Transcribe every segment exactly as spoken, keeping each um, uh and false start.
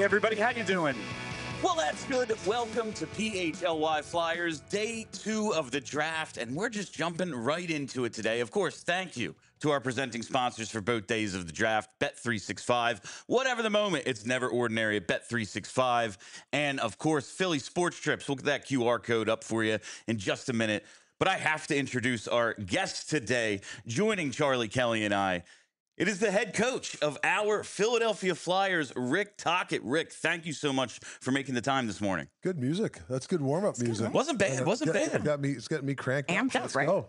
everybody, how you doing? Well, that's good. Welcome to P H L Y Flyers, day two of the draft, and we're just jumping right into it today. Of course, thank you to our presenting sponsors for both days of the draft, Bet three sixty-five. Whatever the moment, it's never ordinary at Bet three sixty-five. And, of course, Philly Sports Trips. We'll get that Q R code up for you in just a minute. But I have to introduce our guest today, joining Charlie Kelly and I. It is the head coach of our Philadelphia Flyers, Rick Tocchet. Rick, thank you so much for making the time this morning. Good music. That's good warm-up music. Good, right? Wasn't bad. It wasn't get, bad. Got me, it's getting me cranked up. Amped up, right? Go.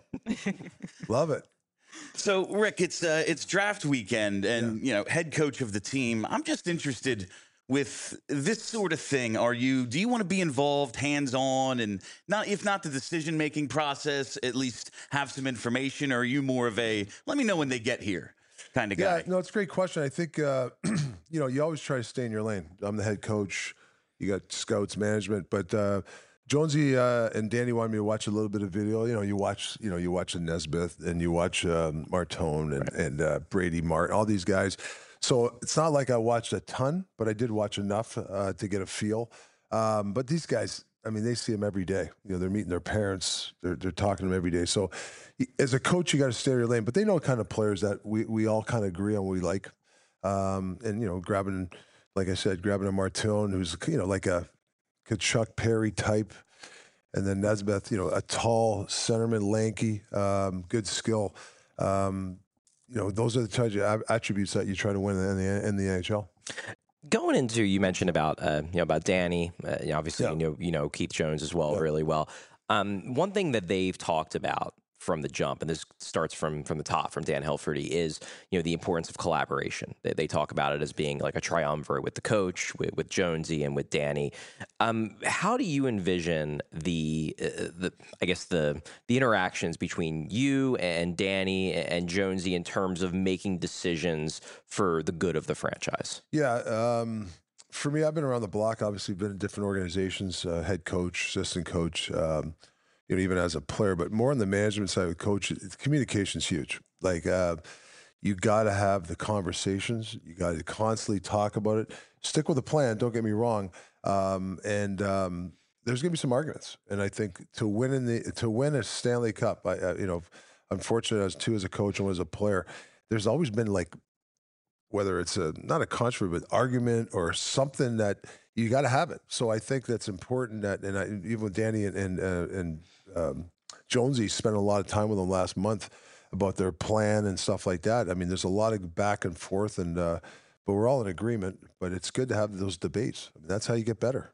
Love it. So, Rick, it's uh, it's draft weekend, and yeah. you know, head coach of the team. I'm just interested with this sort of thing. Are you? Do you want to be involved, hands-on, and not if not the decision-making process, at least have some information? Or are you more of a let me know when they get here kind of guy? Yeah, no, it's a great question. I think, uh, you know, you always try to stay in your lane. I'm the head coach. You got scouts, management. But uh, Jonesy uh, and Danny wanted me to watch a little bit of video. You know, you watch, you know, you watch Nesbitt and you watch um, Martone and, right. and uh, Brady Martin, all these guys. So it's not like I watched a ton, but I did watch enough uh, to get a feel. Um, but these guys, I mean, they see them every day. You know, they're meeting their parents. They're they're talking to them every day. So, as a coach, you got to stay in your lane. But they know what kind of players that we we all kind of agree on. What we like, um, and you know, grabbing, like I said, grabbing a Martone, who's you know like a Kachuk Perry type, and then Nesbitt, you know, a tall centerman, lanky, um, good skill. Um, you know, those are the types of attributes that you try to win in the in the N H L. Going into, you mentioned about uh, you know about Danny. Uh, you know, obviously, Yeah. you know you know Keith Jones as well, Yeah. really well. Um, one thing that they've talked about from the jump, and this starts from from the top, from Dan Hilferty, is you know the importance of collaboration. They, they talk about it as being like a triumvirate with the coach, with, with Jonesy, and with Danny. Um, how do you envision the uh, the I guess the the interactions between you and Danny and Jonesy in terms of making decisions for the good of the franchise? Yeah, um, for me, I've been around the block. Obviously, been in different organizations, uh, head coach, assistant coach. Um, you know, even as a player, but more on the management side with coach, communication's huge. Like, uh, you got to have the conversations. You got to constantly talk about it. Stick with the plan. Don't get me wrong. Um, and um, there's going to be some arguments. And I think to win in the to win a Stanley Cup, I, uh, you know, unfortunate as too as a coach and as a player, there's always been like, whether it's a not a controversy, but argument or something that you got to have it. So I think that's important. That and I, even with Danny and and, uh, and um, Jonesy spent a lot of time with them last month about their plan and stuff like that. I mean, there's a lot of back and forth, and uh, but we're all in agreement. But it's good to have those debates. I mean, that's how you get better.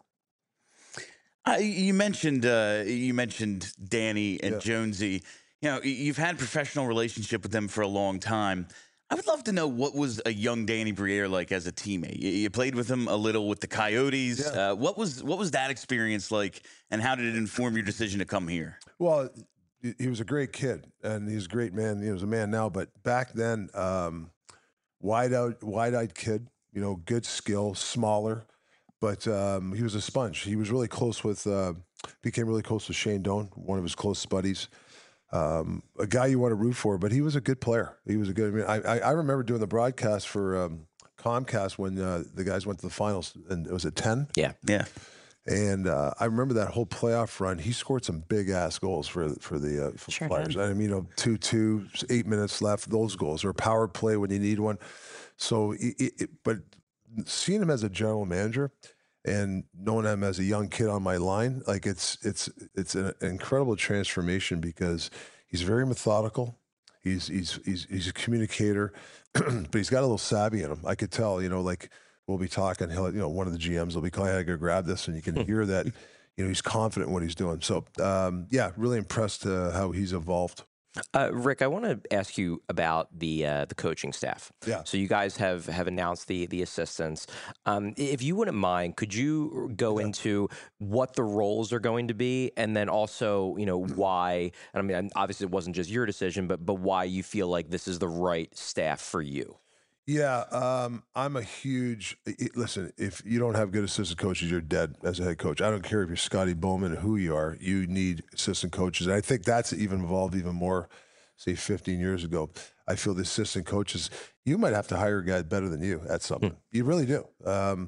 Uh, you mentioned uh, you mentioned Danny and Yeah. Jonesy. You know, you've had a professional relationship with them for a long time. I would love to know what was a young Danny Briere like as a teammate. You, you played with him a little with the Coyotes. Yeah. Uh, what was what was that experience like, and how did it inform your decision to come here? Well, he he was a great kid, and he's a great man. He was a man now, but back then, um, wide out, wide-eyed kid. You know, good skill, smaller, but um, he was a sponge. He was really close with, uh, became really close with Shane Doan, one of his close buddies. Um, a guy you want to root for, but he was a good player. He was a good. I mean, I, I, I remember doing the broadcast for um, Comcast when uh, the guys went to the finals, and it was at ten. Yeah, Yeah. And uh, I remember that whole playoff run. He scored some big ass goals for for the uh, for Sure Flyers. did. I mean, you know, two two, eight minutes left. Those goals or power play when you need one. So, it, it, but seeing him as a general manager and knowing him as a young kid on my line, like it's it's it's an incredible transformation because he's very methodical. He's he's he's he's a communicator, but he's got a little savvy in him. I could tell, you know, like. We'll be talking. He'll, you know, one of the G Ms will be calling, "I gotta go grab this," and you can hear that, you know, he's confident in what he's doing. So, um, yeah, really impressed uh, how he's evolved. uh, Rick, I want to ask you about the uh, the coaching staff. Yeah. So you guys have have announced the the assistants. Um, if you wouldn't mind, could you go Yeah. into what the roles are going to be, and then also, you know, why? And I mean, obviously, it wasn't just your decision, but but why you feel like this is the right staff for you. Yeah, um, I'm a huge. It, listen, if you don't have good assistant coaches, you're dead as a head coach. I don't care if you're Scotty Bowman or who you are. You need assistant coaches, and I think that's even evolved even more. Say fifteen years ago, I feel the assistant coaches. You might have to hire a guy better than you at something. You really do. Um,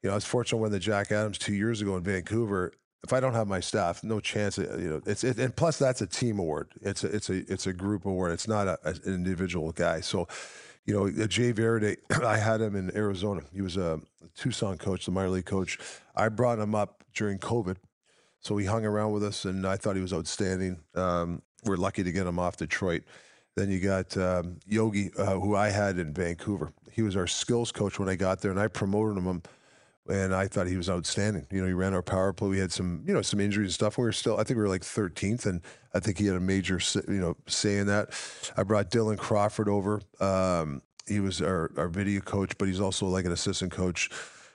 you know, I was fortunate when the Jack Adams two years ago in Vancouver. If I don't have my staff, no chance. You know, it's it, and plus that's a team award. It's a it's a it's a group award. It's not a, an individual guy. So, you know, Jay Verde, I had him in Arizona. He was a Tucson coach, the minor league coach. I brought him up during COVID, so he hung around with us, and I thought he was outstanding. Um, we're lucky to get him off Detroit. Then you got um, Yogi, uh, who I had in Vancouver. He was our skills coach when I got there, and I promoted him. And I thought he was outstanding. You know, he ran our power play. We had some, you know, some injuries and stuff. We were still, I think we were like thirteenth, and I think he had a major, you know, say in that. I brought Dylan Crawford over. Um, he was our, our video coach, but he's also like an assistant coach.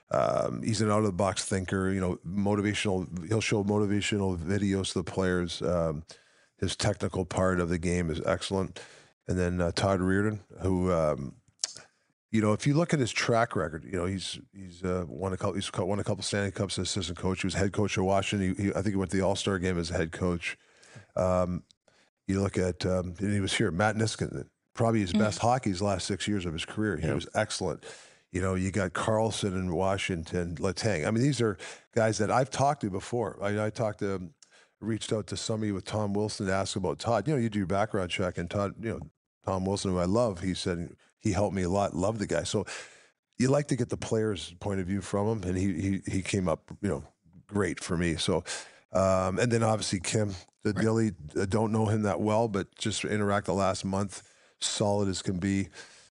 Um, he's an out-of-the-box thinker, you know, motivational. He'll show motivational videos to the players. Um, his technical part of the game is excellent. And then uh, Todd Reardon, who... Um, You know, if you look at his track record, you know he's he's uh, won a couple he's won a couple Stanley Cups as assistant coach. He was head coach of Washington. He, he, I think he went to the All Star game as a head coach. Um, you look at um, and he was here. Matt Niskanen, probably his mm-hmm. best hockey his last six years of his career. He yeah. was excellent. You know, you got Carlson in Washington, Letang. I mean, these are guys that I've talked to before. I, I talked to, reached out to somebody with Tom Wilson to ask about Todd. You know, you do your background check, and Todd, you know, Tom Wilson, who I love, he said he helped me a lot. Love the guy. So you like to get the player's point of view from him, and he he he came up, you know, great for me. So, um, and then obviously Kim, the right. Dilly, I don't know him that well, but just interact the last month, solid as can be.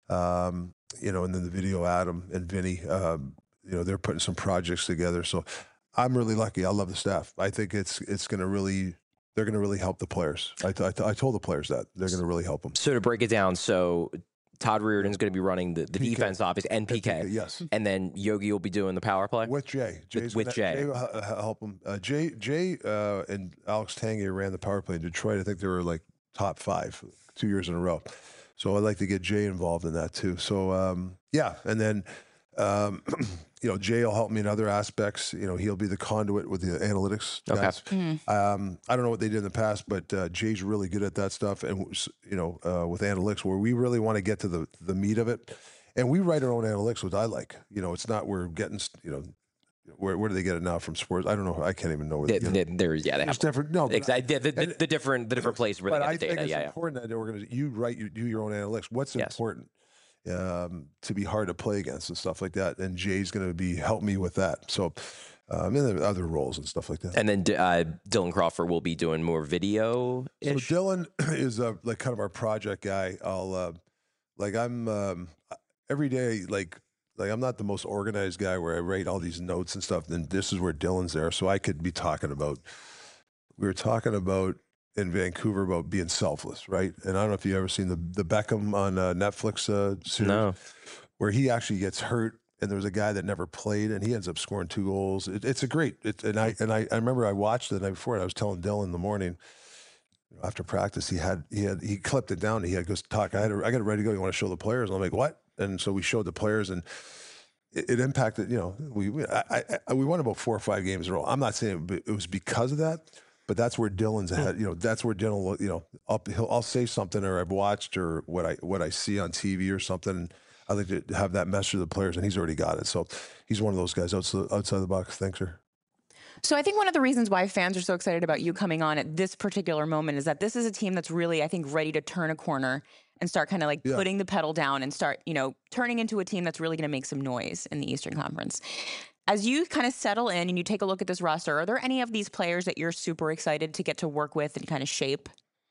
Um, you know, and then the video Adam and Vinny, um, you know, they're putting some projects together. So I'm really lucky. I love the staff. I think it's it's going to really. They're going to really help the players. I, I, I told the players that. They're going to really help them. So to break it down, so Todd Reardon's going to be running the, the defense, obviously, and P K. P K. Yes. And then Yogi will be doing the power play? With Jay. Jay's with, with Jay. Jay will help him. Uh, Jay Jay uh, and Alex Tanguay ran the power play in Detroit. I think they were like top five two years in a row. So I'd like to get Jay involved in that too. So, um, yeah. And then... Um, you know, Jay will help me in other aspects. You know, he'll be the conduit with the analytics guys. Okay. Mm-hmm. Um, I don't know what they did in the past, but uh, Jay's really good at that stuff. And, you know, uh, with analytics, where we really want to get to the, the meat of it. And we write our own analytics, which I like. You know, it's not we're getting, you know, where where do they get it now from sports? I don't know. I can't even know. Where they, they, they, there's yeah, they have different. No, exactly. The, the, and, the different the different place where they get I the data. think it's yeah, important yeah. that organization you write you do your own analytics. What's yes. important? Um, to be hard to play against and stuff like that. And Jay's going to be help me with that. So, um, and other roles and stuff like that. And then uh, Dylan Crawford will be doing more video. So Dylan is uh, like kind of our project guy. I'll uh, like I'm um, every day like like I'm not the most organized guy where I write all these notes and stuff. Then this is where Dylan's there, so I could be talking about. We were talking about. In Vancouver about being selfless, right? And I don't know if you've ever seen the the Beckham on uh, Netflix uh, series, no. where he actually gets hurt, and there was a guy that never played, and he ends up scoring two goals. It, it's a great, it, and I and I, I remember I watched it the night before, and I was telling Dylan in the morning after practice, he had he had he clipped it down. He had goes talk. I had a, I got it ready to go. You want to show the players? And I'm like, what? And so we showed the players, and it, it impacted. You know, we we, I, I, we won about four or five games in a row. I'm not saying it was because of that. But that's where Dylan's ahead. You know, that's where Dylan. You know, I'll, he'll, I'll say something or I've watched or what I what I see on T V or something. And I like to have that message to the players, and he's already got it. So he's one of those guys outside outside the box thinker. So I think one of the reasons why fans are so excited about you coming on at this particular moment is that this is a team that's really, I think, ready to turn a corner and start kind of like yeah. putting the pedal down and start, you know, turning into a team that's really going to make some noise in the Eastern Conference. As you kind of settle in and you take a look at this roster, are there any of these players that you're super excited to get to work with and kind of shape?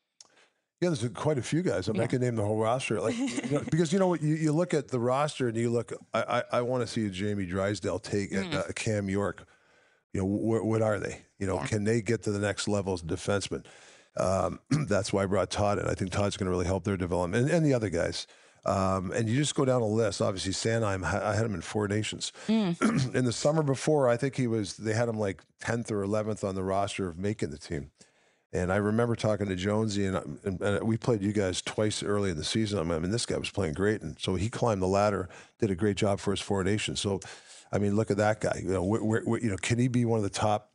Yeah, there's quite a few guys. I mean, yeah. I can name the whole roster. Like, you know, because you know what, you, you look at the roster and you look. I I, I want to see a Jamie Drysdale take mm. uh, Cam York. You know, wh- what are they? You know, yeah. can they get to the next level as defensemen? Um, that's why I brought Todd in. I think Todd's going to really help their development and, and the other guys. Um, and you just go down a list. Obviously, Sanheim, I had him in four nations. Mm. In the summer before, I think he was. They had him like tenth or eleventh on the roster of making the team. And I remember talking to Jonesy, and, and, and we played you guys twice early in the season. I mean, this guy was playing great, and so he climbed the ladder, did a great job for his four nations. So, I mean, look at that guy. You know, where, where, you know, can he be one of the top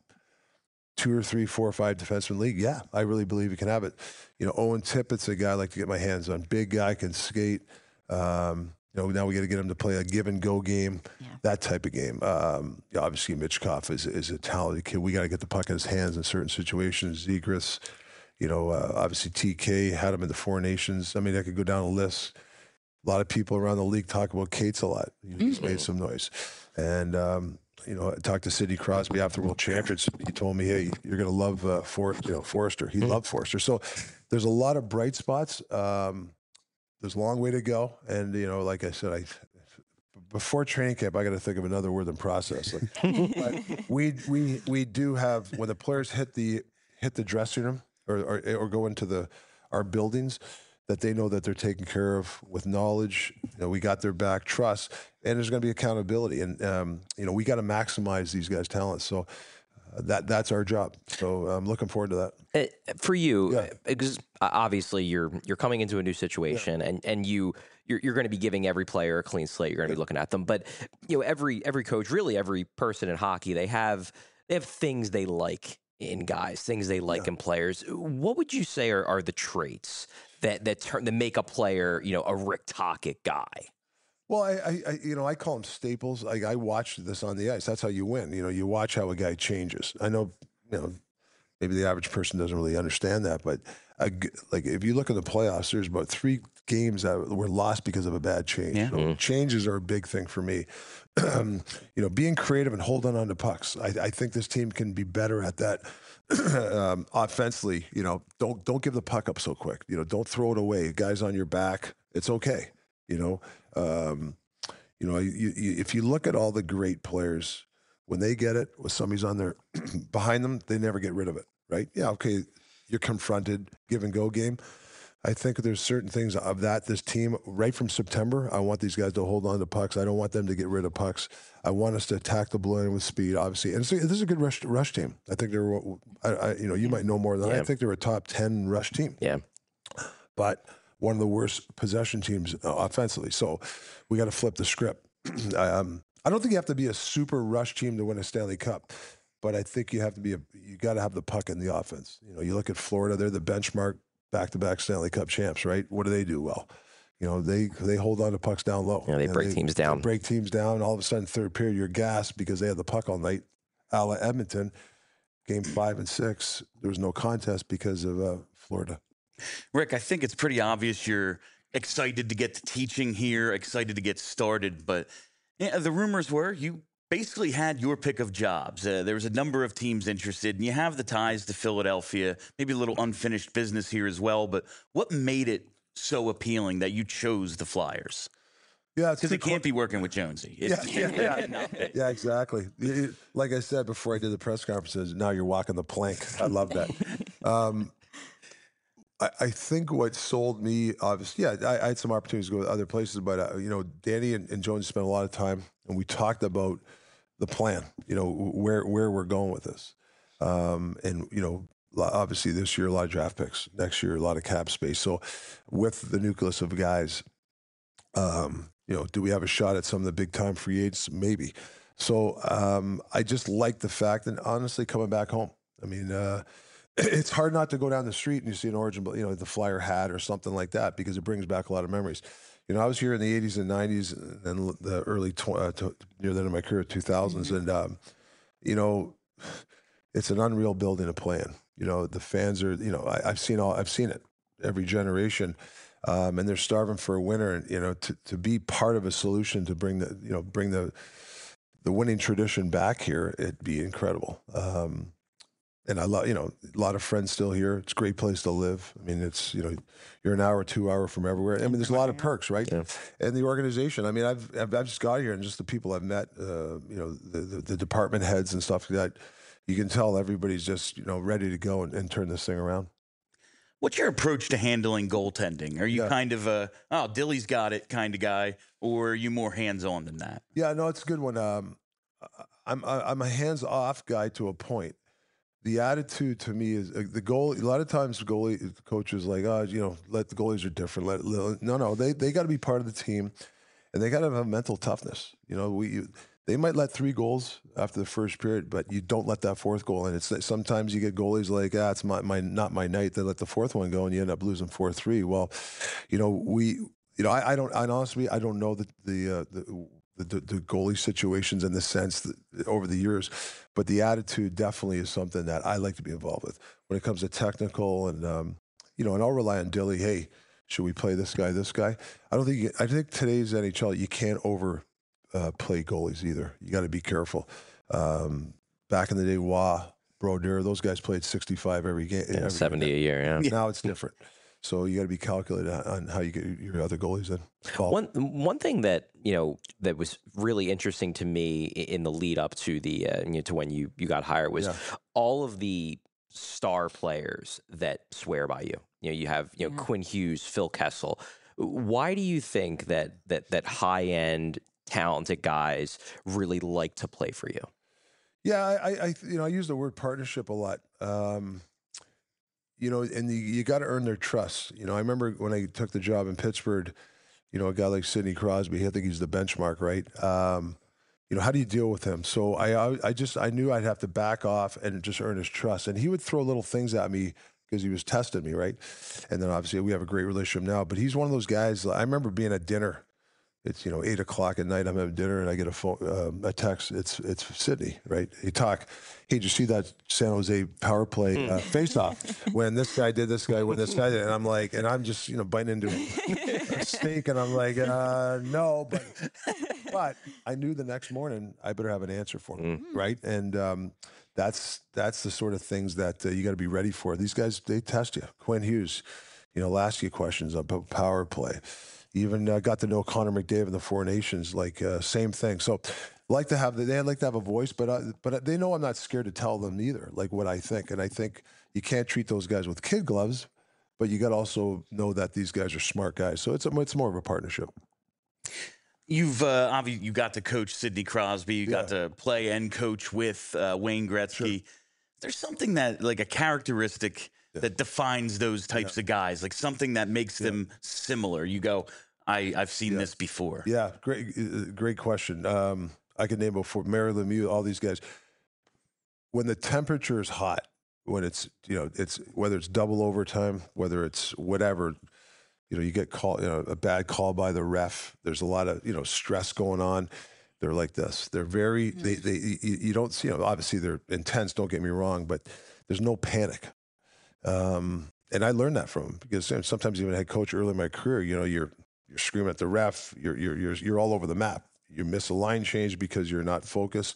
two or three, four or five defensemen league? Yeah, I really believe he can have it. You know, Owen Tippett's a guy I like to get my hands on. Big guy, can skate. Um, You know, now we got to get him to play a give and go game, Yeah. that type of game. Um, yeah, obviously, Mitchkov is is a talented kid. We got to get the puck in his hands in certain situations. Zegras, you know, uh, obviously T K had him in the Four Nations. I mean, I could go down a list. A lot of people around the league talk about Cates a lot. He's mm-hmm. made some noise. And, um, you know, I talked to Sidney Crosby after World Champions. He told me, hey, you're going to love uh, For, you know, Forrester. He mm-hmm. loved Forrester. So there's a lot of bright spots. Um, there's a long way to go. And, you know, like I said, I before training camp, I got to think of another word than process. Like, but we we we do have, when the players hit the hit the dressing room or or, or go into the our buildings, that they know that they're taken care of with knowledge. You know, we got their back, trust, and there's going to be accountability. And, um, you know, we got to maximize these guys' talents. So uh, that that's our job. So I'm looking forward to that. Uh, for you, Yeah. because obviously you're you're coming into a new situation, yeah. and and you you're, you're going to be giving every player a clean slate. You're going to yeah. be looking at them, but you know, every every coach, really every person in hockey, they have they have things they like in guys, things they like yeah. in players. What would you say are, are the traits that that turn that make a player, you know, a Rick Tocchet guy? Well, I, I, I you know, I call them staples. I, I watched this on the ice. That's how you win. You know, you watch how a guy changes. I know, you know, maybe the average person doesn't really understand that, but a, like if you look at the playoffs, there's about three games that were lost because of a bad change. Yeah. So mm-hmm. changes are a big thing for me. you know, being creative and holding on to pucks. I, I think this team can be better at that. um, offensively, you know, don't don't give the puck up so quick. You know, don't throw it away. Guys on your back, it's okay. You know, um, you know, you, you, if you look at all the great players, when they get it, with somebody's on their behind them, they never get rid of it, right? Yeah, okay, you're confronted, give and go game. I think there's certain things of that, this team, right from September, I want these guys to hold on to pucks. I don't want them to get rid of pucks. I want us to attack the blue line with speed, obviously. And so, this is a good rush rush team. I think they're, I, I, you know, you might know more than yeah. I. I think they're a top ten rush team. Yeah. But one of the worst possession teams uh, offensively. So we got to flip the script. um, I don't think you have to be a super rush team to win a Stanley Cup, but I think you have to be a, you got to have the puck in the offense. You know, you look at Florida, they're the benchmark back-to-back Stanley Cup champs, right? What do they do well? You know, they they hold on to pucks down low. Yeah, they break they, teams down. They break teams down. All of a sudden, third period, you're gassed because they had the puck all night. A la Edmonton, game five and six, there was no contest because of uh, Florida. Rick, I think it's pretty obvious you're excited to get to teaching here, excited to get started, but yeah, the rumors were you basically had your pick of jobs. Uh, there was a number of teams interested, and you have the ties to Philadelphia, maybe a little unfinished business here as well, but what made it so appealing that you chose the Flyers? Yeah, because it can't be working with Jonesy. Yeah, yeah, yeah. yeah, exactly. Like I said before I did the press conferences, now you're walking the plank. I love that. Um, I, I think what sold me, obviously, yeah, I, I had some opportunities to go to other places, but, uh, you know, Danny and, and Jonesy spent a lot of time, and we talked about the plan, you know, where where we're going with this. Um, and, you know, obviously this year, a lot of draft picks. Next year, a lot of cap space. So with the nucleus of guys, um, you know, do we have a shot at some of the big-time free agents? Maybe. So um, I just like the fact, and honestly, coming back home. I mean, uh, it's hard not to go down the street and you see an Origin, you know, the Flyer hat or something like that, because it brings back a lot of memories. You know, I was here in the eighties and nineties and the early, tw- uh, to, near the end of my career, two thousands. Mm-hmm. And, um, you know, it's an unreal building to play in. You know, the fans are, you know, I, I've seen all, I've seen it every generation. Um, and they're starving for a winner, and, you know, to, to be part of a solution to bring the, you know, bring the, the winning tradition back here, it'd be incredible. Um, And I love, you know, a lot of friends still here. It's a great place to live. I mean, it's, you know, you're an hour, two hour from everywhere. I mean, there's a lot of perks, right? Yeah. And the organization. I mean, I've, I've I've just got here, and just the people I've met, uh, you know, the, the the department heads and stuff like that. You can tell everybody's just, you know, ready to go and, and turn this thing around. What's your approach to handling goaltending? Are you yeah. kind of a, oh, Dilly's got it kind of guy, or are you more hands on than that? Yeah, no, it's a good one. Um, I'm I'm a hands off guy to a point. The attitude to me is uh, the goal. A lot of times, goalie coaches like, oh, you know, let the goalies are different. Let, let no, no, they they got to be part of the team, and they got to have mental toughness. You know, we you, they might let three goals after the first period, but you don't let that fourth goal in. It's sometimes you get goalies like, ah, it's my, my not my night. They let the fourth one go, and you end up losing four three. Well, you know, we you know, I, I don't, I honestly, I don't know the the, uh, the the the goalie situations in the sense that over the years, but the attitude definitely is something that I like to be involved with when it comes to technical and um, you know, and I'll rely on Dilly. Hey, should we play this guy, this guy? I don't think. You, I think today's N H L, you can't over uh, play goalies either. You got to be careful. Um, back in the day, Wah, Brodeur, those guys played sixty-five every game. Yeah, every seventy game. a year. Yeah. Now it's different. So you got to be calculated on how you get your other goalies in. Ball. One one thing that you know that was really interesting to me in the lead up to the uh, you know, to when you you got hired was yeah. all of the star players that swear by you. You know, you have you know yeah. Quinn Hughes, Phil Kessel. Why do you think that that that high end talented guys really like to play for you? Yeah, I, I you know I use the word partnership a lot. Um, You know, and you, you got to earn their trust. You know, I remember when I took the job in Pittsburgh, you know, a guy like Sidney Crosby, I think he's the benchmark, right? Um, you know, how do you deal with him? So I, I just, I knew I'd have to back off and just earn his trust. And he would throw little things at me because he was testing me, right? And then obviously we have a great relationship now. But he's one of those guys. I remember being at dinner. It's, you know, eight o'clock at night, I'm having dinner, and I get a phone, um, a text. It's it's Sidney, right? He talk, hey, did you see that San Jose power play uh, face-off when this guy did this guy, when this guy did? And I'm like, and I'm just, you know, biting into a steak, and I'm like, uh, no, but but I knew the next morning I better have an answer for him, mm. right? And um, that's that's the sort of things that uh, you got to be ready for. These guys, they test you. Quinn Hughes, you know, will ask you questions about power play. Even uh, got to know Connor McDavid in the Four Nations, like uh, same thing. So, like to have they like to have a voice, but uh, but they know I'm not scared to tell them either, like what I think. And I think you can't treat those guys with kid gloves, but you got to also know that these guys are smart guys. So it's a, it's more of a partnership. You've uh, obviously you got to coach Sidney Crosby, you yeah. got to play and coach with uh, Wayne Gretzky. Sure. There's something that like a characteristic. Yeah. That defines those types yeah. of guys, like something that makes yeah. them similar. You go, I, I've seen yeah. this before. Yeah, great, great question. Um, I can name before Mary Lemieux, all these guys. When the temperature is hot, when it's you know it's whether it's double overtime, whether it's whatever, you know you get called, you know a bad call by the ref. There's a lot of you know stress going on. They're like this. They're very. Mm-hmm. They they you, you don't see. You know, obviously they're intense. Don't get me wrong, but there's no panic. Um, and I learned that from him because sometimes even head coach early in my career, you know, you're you're screaming at the ref, you're you're you're you're all over the map. You miss a line change because you're not focused.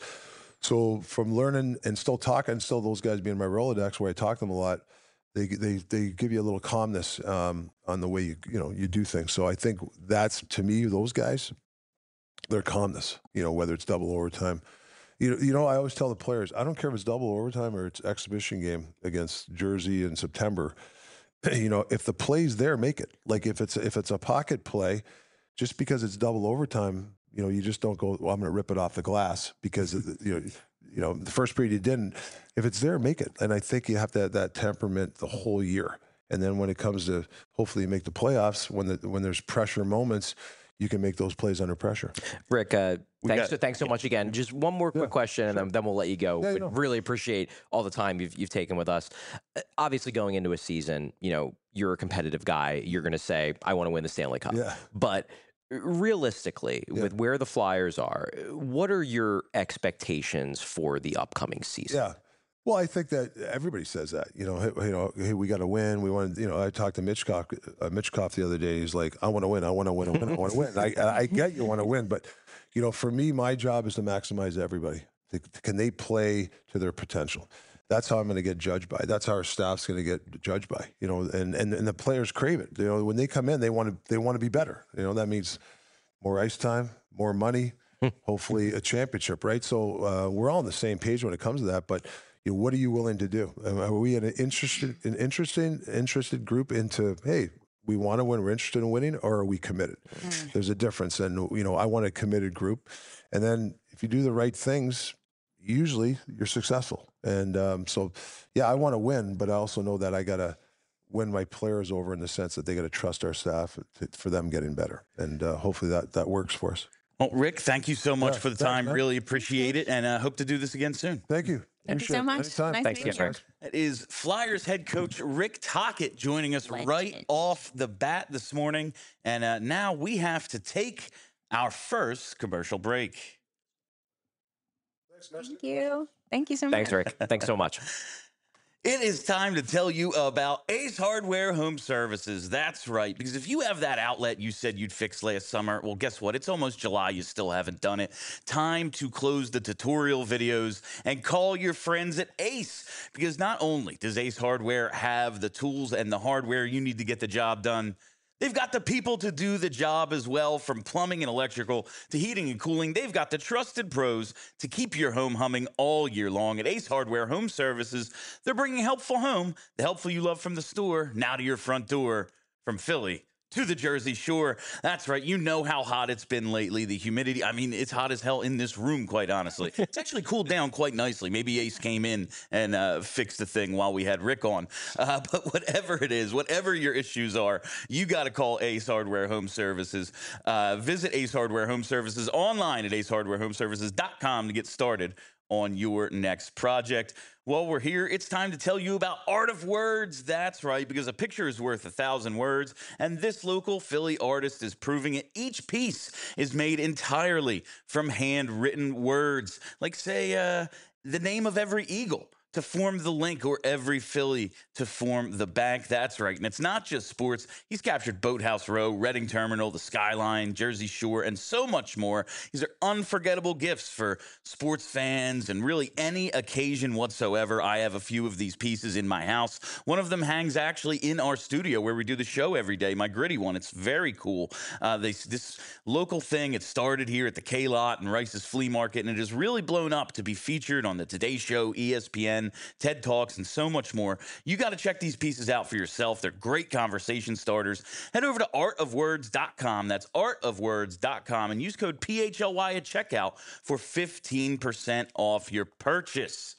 So from learning and still talking, still those guys being my Rolodex where I talk to them a lot, they they they give you a little calmness um, on the way you you know you do things. So I think that's to me those guys, their calmness. You know, whether it's double overtime. You know, you know, I always tell the players, I don't care if it's double overtime or it's exhibition game against Jersey in September. You know, if the play's there, make it. Like if it's if it's a pocket play, just because it's double overtime, you know, you just don't go, well, I'm going to rip it off the glass because you know, you know, the first period you didn't. If it's there, make it. And I think you have to have that temperament the whole year. And then when it comes to hopefully make the playoffs, when the when there's pressure moments, you can make those plays under pressure. Rick, uh, thanks, got, so, thanks so much again. Just one more quick yeah, question, and sure. then, then we'll let you go. Yeah, but you know. Really appreciate all the time you've you've taken with us. Uh, obviously, going into a season, you know, you're a competitive guy. You're going to say, I want to win the Stanley Cup. Yeah. But realistically, yeah. with where the Flyers are, what are your expectations for the upcoming season? Yeah. Well, I think that everybody says that, you know, hey, you know, hey, we got to win. We want to, you know, I talked to Mitchkoff, uh, Mitchkoff the other day. He's like, I want to win. I want to win. I want to win. I want to win. I, I get you want to win. But, you know, for me, my job is to maximize everybody. Can they play to their potential? That's how I'm going to get judged by. That's how our staff's going to get judged by, you know, and, and, and the players crave it. You know, when they come in, they want to, they want to be better. You know, that means more ice time, more money, hopefully a championship, right? So uh, we're all on the same page when it comes to that. But you know, what are you willing to do? Are we an interested, an interesting, interested group into, hey, we want to win, we're interested in winning, or are we committed? Mm. There's a difference. And, you know, I want a committed group. And then if you do the right things, usually you're successful. And um, so, yeah, I want to win, but I also know that I got to win my players over in the sense that they got to trust our staff to, for them getting better. And uh, hopefully that, that works for us. Well, Rick, thank you so much yeah, for the time. Thanks, really appreciate it, and uh, hope to do this again soon. Thank you. Thank you so much. Anytime. Nice Thanks to meet again, you. Rick. That is Flyers head coach Rick Tocchet joining us Legend. right off the bat this morning. And uh, now we have to take our first commercial break. Thank you. Thank you so much. Thanks, Rick. Thanks so much. It is time to tell you about Ace Hardware Home Services. That's right, because if you have that outlet you said you'd fix last summer, well, guess what? It's almost July. You still haven't done it. Time to close the tutorial videos and call your friends at Ace, because not only does Ace Hardware have the tools and the hardware you need to get the job done, they've got the people to do the job as well, from plumbing and electrical to heating and cooling. They've got the trusted pros to keep your home humming all year long. At Ace Hardware Home Services, they're bringing helpful home, the helpful you love from the store, now to your front door, from Philly to the Jersey Shore. That's right. You know how hot it's been lately. The humidity, I mean, it's hot as hell in this room, quite honestly. It's actually cooled down quite nicely. Maybe Ace came in and uh, fixed the thing while we had Rick on. Uh, but whatever it is, whatever your issues are, you got to call Ace Hardware Home Services. Uh, visit Ace Hardware Home Services online at ace hardware home services dot com to get started on your next project. While we're here, it's time to tell you about Art of Words. That's right, because a picture is worth a thousand words, and this local Philly artist is proving it. Each piece is made entirely from handwritten words, like, say, uh, the name of every Eagle to form the link, or every Philly to form the bank. That's right. And it's not just sports. He's captured Boathouse Row, Reading Terminal, the Skyline, Jersey Shore, and so much more. These are unforgettable gifts for sports fans and really any occasion whatsoever. I have a few of these pieces in my house. One of them hangs actually in our studio where we do the show every day, my gritty one. It's very cool. Uh, they, this local thing, it started here at the K-Lot and Rice's Flea Market, and it has really blown up to be featured on the Today Show, E S P N, TED Talks, and so much more. You got to check these pieces out for yourself. They're great conversation starters. Head over to art of words dot com. That's art of words dot com, and use code P H L Y at checkout for fifteen percent off your purchase.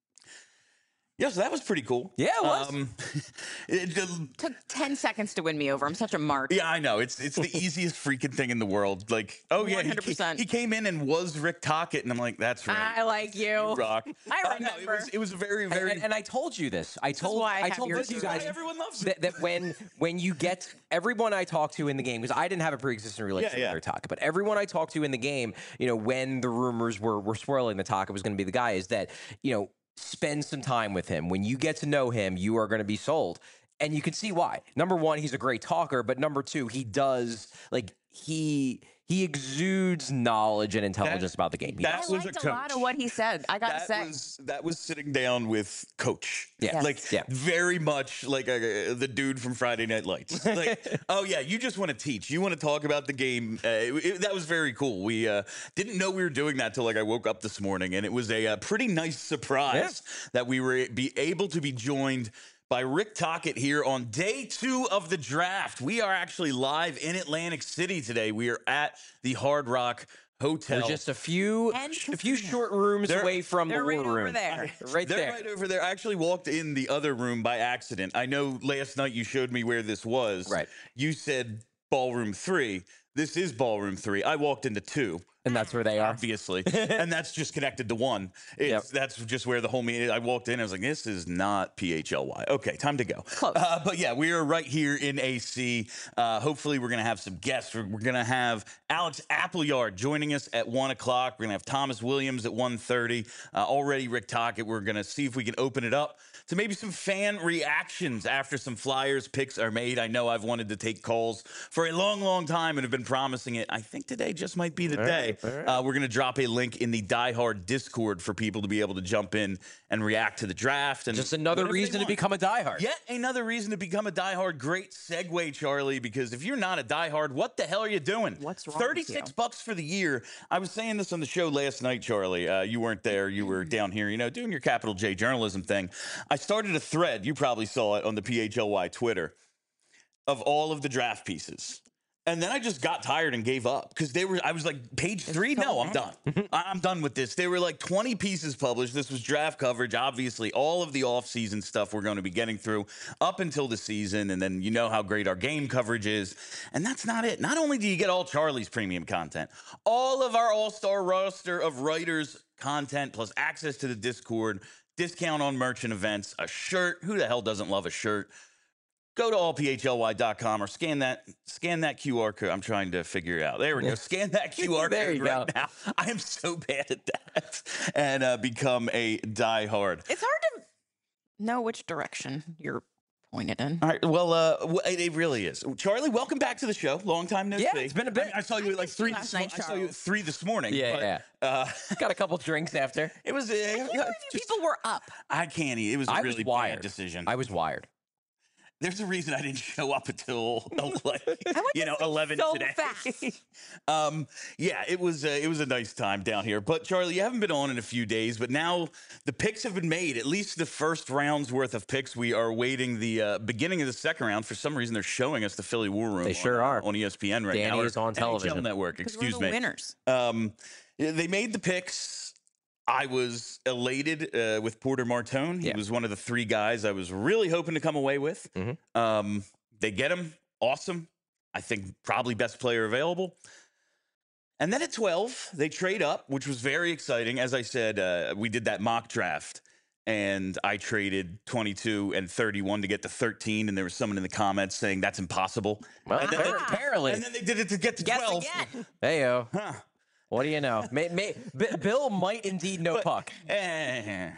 Yeah, so that was pretty cool. Yeah, it was. Um, it, uh, Took ten seconds to win me over. I'm such a mark. yeah, I know. It's it's the easiest freaking thing in the world. Like, oh, yeah, one he, hundred percent. he came in and was Rick Tocchet, and I'm like, that's right. I like you. You rock. I Uh, no, remember. it was, it was very, And, very... and, and I told you this. I told why I I have told yours both you too. guys Everyone loves that, that when when you get everyone I talk to in the game, because I didn't have a pre-existing relationship Yeah, yeah. with Taka, but everyone I talked to in the game, you know, when the rumors were were swirling that Taka was going to be the guy, is that, you know, spend some time with him. When you get to know him, you are going to be sold. And you can see why. Number one, he's a great talker, but number two, he does, like, he he exudes knowledge and intelligence That- about the game. He that I does. was a liked a, lot coach. of what he said. I got to that say. was that was sitting down with Coach. Yeah. Yes. Like, Yeah. very much like uh, the dude from Friday Night Lights. Like, oh yeah, you just want to teach. You want to talk about the game. Uh, it- it- that was very cool. We uh, didn't know we were doing that till like I woke up this morning, and it was a, uh pretty nice surprise that we were be able to be joined by Rick Tocchet here on day two of the draft. We are actually live in Atlantic City today. We are at the Hard Rock Hotel. They're just a few And a few short rooms They're- away from They're the right war over room. there. Right They're there. right over there. I actually walked in the other room by accident. I know last night you showed me where this was. Right. You said ballroom three. This is ballroom three. I walked into two, And that's where they are. obviously, and that's just connected to one. It's, Yep. That's just where the whole meeting. I walked in. I was like, this is not P H L Y. Okay, time to go. Close. Uh, but yeah, we are right here in A C. Uh, hopefully, we're going to have some guests. We're, we're going to have Alex Appleyard joining us at one o'clock. We're going to have Thomas Williams at one thirty. Uh, already Rick Tocchet. We're going to see if we can open it up to maybe some fan reactions after some Flyers picks are made. I know I've wanted to take calls for a long, long time and have been promising it. I think today just might be the day. Uh, we're going to drop a link in the Die Hard Discord for people to be able to jump in and react to the draft. And Just another whatever they reason to want. become a diehard. Yet another reason to become a diehard. Great segue, Charlie, because if you're not a diehard, what the hell are you doing? What's wrong with thirty-six you? bucks for the year. I was saying this on the show last night, Charlie. Uh, you weren't there. You were down here, you know, doing your Capital J journalism thing. I started a thread. You probably saw it on the P H L Y Twitter of all of the draft pieces. And then I just got tired and gave up because they were, I was like, page three? so No, I'm bad. done. I- I'm done with this. There were like twenty pieces published. This was draft coverage, obviously, all of the off-season stuff we're going to be getting through up until the season. And then you know how great our game coverage is. And that's not it. Not only do you get all Charlie's premium content, all of our all-star roster of writers content, plus access to the Discord, discount on merch and events, a shirt. Who the hell doesn't love a shirt? Go to all p h l y dot com or scan that scan that Q R code. I'm trying to figure it out. There we go. Scan that Q R There code you right go. now. I am so bad at that. And uh, become a diehard. It's hard to know which direction you're pointed in. All right. Well, uh, w- it it really is. Charlie, welcome back to the show. Long time no Yeah, see. it's been a bit. I, I saw you I at like missed you three. last This, mo- night, I saw you at Charles. three this morning. Yeah, but, yeah. Uh, Got a couple drinks after. it was. Uh, I can't believe just- people were up. I can't. eat. It was a I really was wired. bad decision. I was wired. There's a reason I didn't show up until like, I went you to know sleep eleven so today. fast. um, yeah, it was uh, it was a nice time down here. But Charlie, you haven't been on in a few days, but now the picks have been made. At least the first round's worth of picks. We are waiting the uh, beginning of the second round. For some reason, they're showing us the Philly War Room. They sure on, are. on E S P N right Danny now. or is on N H L television. Network. Because Excuse we're the me. winners. Um, yeah, they made the picks. I was elated uh, with Porter Martone. He Yeah. was one of the three guys I was really hoping to come away with. Mhm. Um, they get him. Awesome. I think probably best player available. And then at twelve, they trade up, which was very exciting. As I said, uh, we did that mock draft, and I traded twenty-two and thirty-one to get to thirteen, and there was someone in the comments saying that's impossible. Well, and, then, Ah. apparently. and then they did it to get to Guess twelve. again. Heyo. Huh. What do you know? May, may, B- Bill might indeed know But- puck. Eh.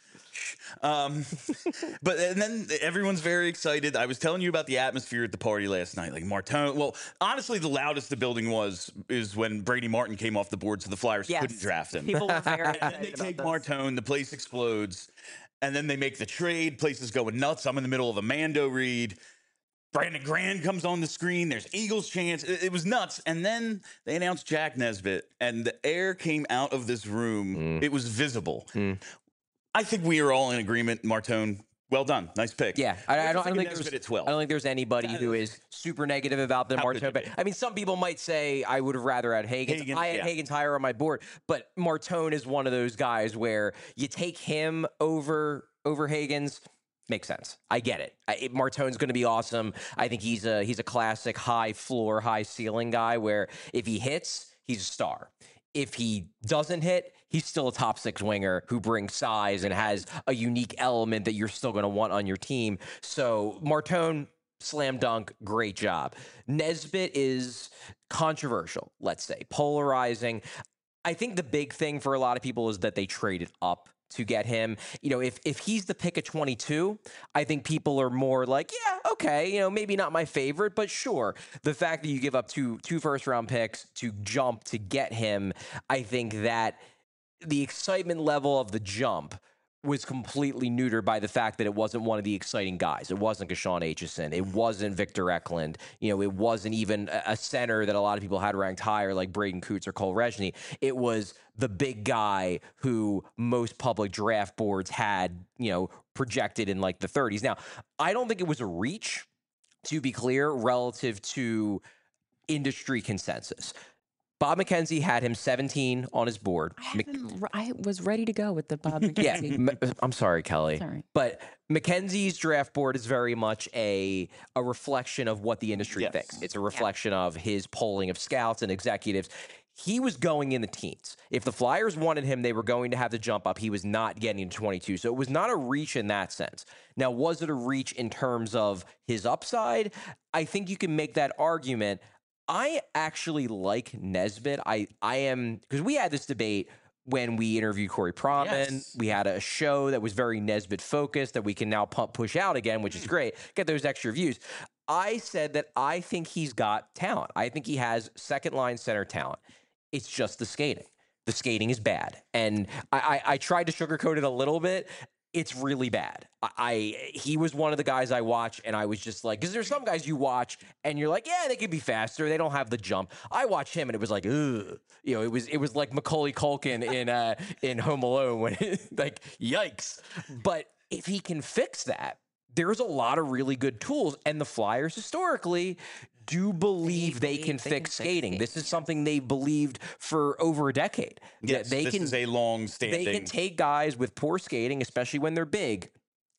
Um, but and then everyone's very excited. I was telling you about the atmosphere at the party last night. Like Martone. Well, honestly, the loudest the building was is when Brady Martin came off the board, so the Flyers Yes. couldn't draft him. People were very And then they excited take about this. Martone, the place explodes, and then they make the trade. Places going nuts. I'm in the middle of a Mando read. Brandon Grand comes on the screen. There's Eagles chants. It, it was nuts. And then they announced Jack Nesbitt, and the air came out of this room. Mm. It was visible. Mm. I think we are all in agreement. Martone, well done. Nice pick. Yeah, I, I What don't, I do don't you think of there's. Nesbitt at twelve? I don't think there's anybody who is super negative about the How could Martone. you But be? I mean, some people might say I would have rather had Hagen. Hagen, I had yeah. Hagen's higher on my board, but Martone is one of those guys where you take him over over Hagen's. Makes sense. I get it. I, it Martone's going to be awesome. I think he's a he's a classic high floor, high ceiling guy. Where if he hits, he's a star. If he doesn't hit, he's still a top six winger who brings size and has a unique element that you're still going to want on your team. So Martone, slam dunk, great job. Nesbitt is controversial, let's say, polarizing. I think the big thing for a lot of people is that they traded up to get him. You know, if if he's the pick at twenty-two, I think people are more like, yeah, okay, you know, maybe not my favorite, but sure. The fact that you give up two two first round picks to jump to get him, I think that the excitement level of the jump was completely neutered by the fact that it wasn't one of the exciting guys. It wasn't Kashawn Aitchison. It wasn't Victor Eklund. You know, it wasn't even a a center that a lot of people had ranked higher like Braden Coots or Cole Resney. It was the big guy who most public draft boards had, you know, projected in like the thirties. Now, I don't think it was a reach, to be clear, relative to industry consensus. Bob McKenzie had him seventeen on his board. I, Mc- haven't, I was ready to go with the Bob yeah, McKenzie. M- I'm sorry, Kelly. Sorry. But McKenzie's draft board is very much a a reflection of what the industry Yes. thinks. It's a reflection of his polling of scouts and executives. He was going in the teens. If the Flyers wanted him, they were going to have to jump up. He was not getting to twenty-two. So it was not a reach in that sense. Now, was it a reach in terms of his upside? I think you can make that argument. I actually like Nesbitt. I, I am, because we had this debate when we interviewed Corey Proman. Yes. We had a show that was very Nesbitt focused that we can now pump push out again, which is great. Get those extra views. I said that I think he's got talent. I think he has second line center talent. It's just the skating. The skating is bad. And I, I, I tried to sugarcoat it a little bit. It's really bad. I, I he was one of the guys I watch, and I was just like, because there's some guys you watch, and you're like, yeah, they could be faster. They don't have the jump. I watched him, and it was like, ugh. You know, it was it was like Macaulay Culkin in uh, in Home Alone, when like, yikes. But if he can fix that, there's a lot of really good tools, and the Flyers historically do believe they, believe can they fix can fix skating. skating, This is something they believed for over a decade. that Yes, they this can is a long standing. they can take guys with poor skating, especially when they're big,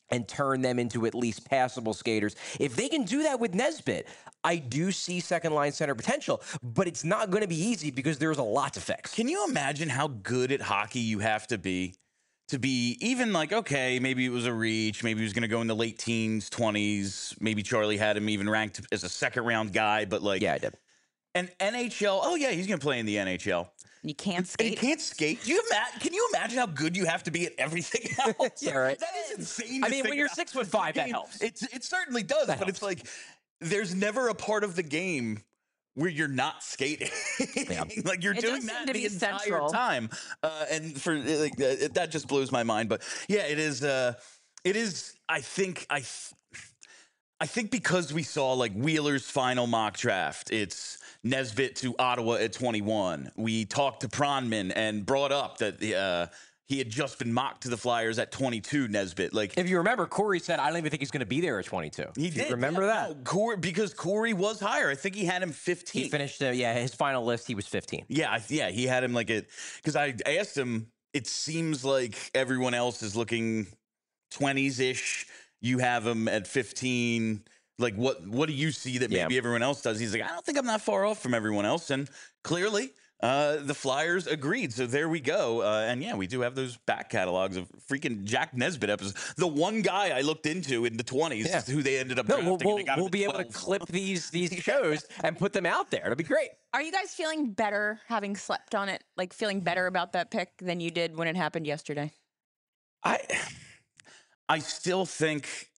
and turn them into at least passable skaters. If they can do that with Nesbitt, I do see second line center potential, but it's not going to be easy because there's a lot to fix. Can you imagine how good at hockey you have to be to be even like, okay, maybe it was a reach, maybe he was going to go in the late teens, twenties, maybe Charlie had him even ranked as a second round guy, but like, yeah, I did. And N H L, oh yeah, he's going to play in the N H L. You can't And skate. he can't skate. Do you imagine? Can you imagine how good you have to be at everything else? Yeah, right. That is insane. I to mean, think when you're about. six foot five, I mean, that helps. It's, it certainly does, That but helps. it's like there's never a part of the game where you're not skating. Yeah. Like you're It doing does seem that to the be entire central. time, uh, and for like uh, that just blows my mind. But yeah, it is. Uh, it is. I think. I. Th- I think because we saw like Wheeler's final mock draft, it's Nesbitt to Ottawa at twenty-one. We talked to Pronman and brought up that uh, he had just been mocked to the Flyers at twenty-two. Nesbitt, like If you remember, Corey said, I don't even think he's going to be there at twenty-two. he If you did. remember yeah, that? no, Corey, because Corey was higher. I think he had him fifteen. He finished, uh, yeah, his final list, he was fifteen. Yeah, I- yeah, he had him like it because I asked him. It seems like everyone else is looking twenties ish. You have him at fifteen. Like what? What do you see that maybe Yeah. everyone else does? He's like, I don't think I'm that far off from everyone else, and clearly. Uh, the Flyers agreed, so there we go. Uh, and yeah, we do have those back catalogs of freaking Jack Nesbitt episodes. The one guy I looked into in the twenties, Yeah. who they ended up No, drafting. we'll, and we'll, they got him we'll at be able to twelve. clip these these shows and put them out there. It'll be great. Are you guys feeling better having slept on it? Like feeling better about that pick than you did when it happened yesterday? I, I still think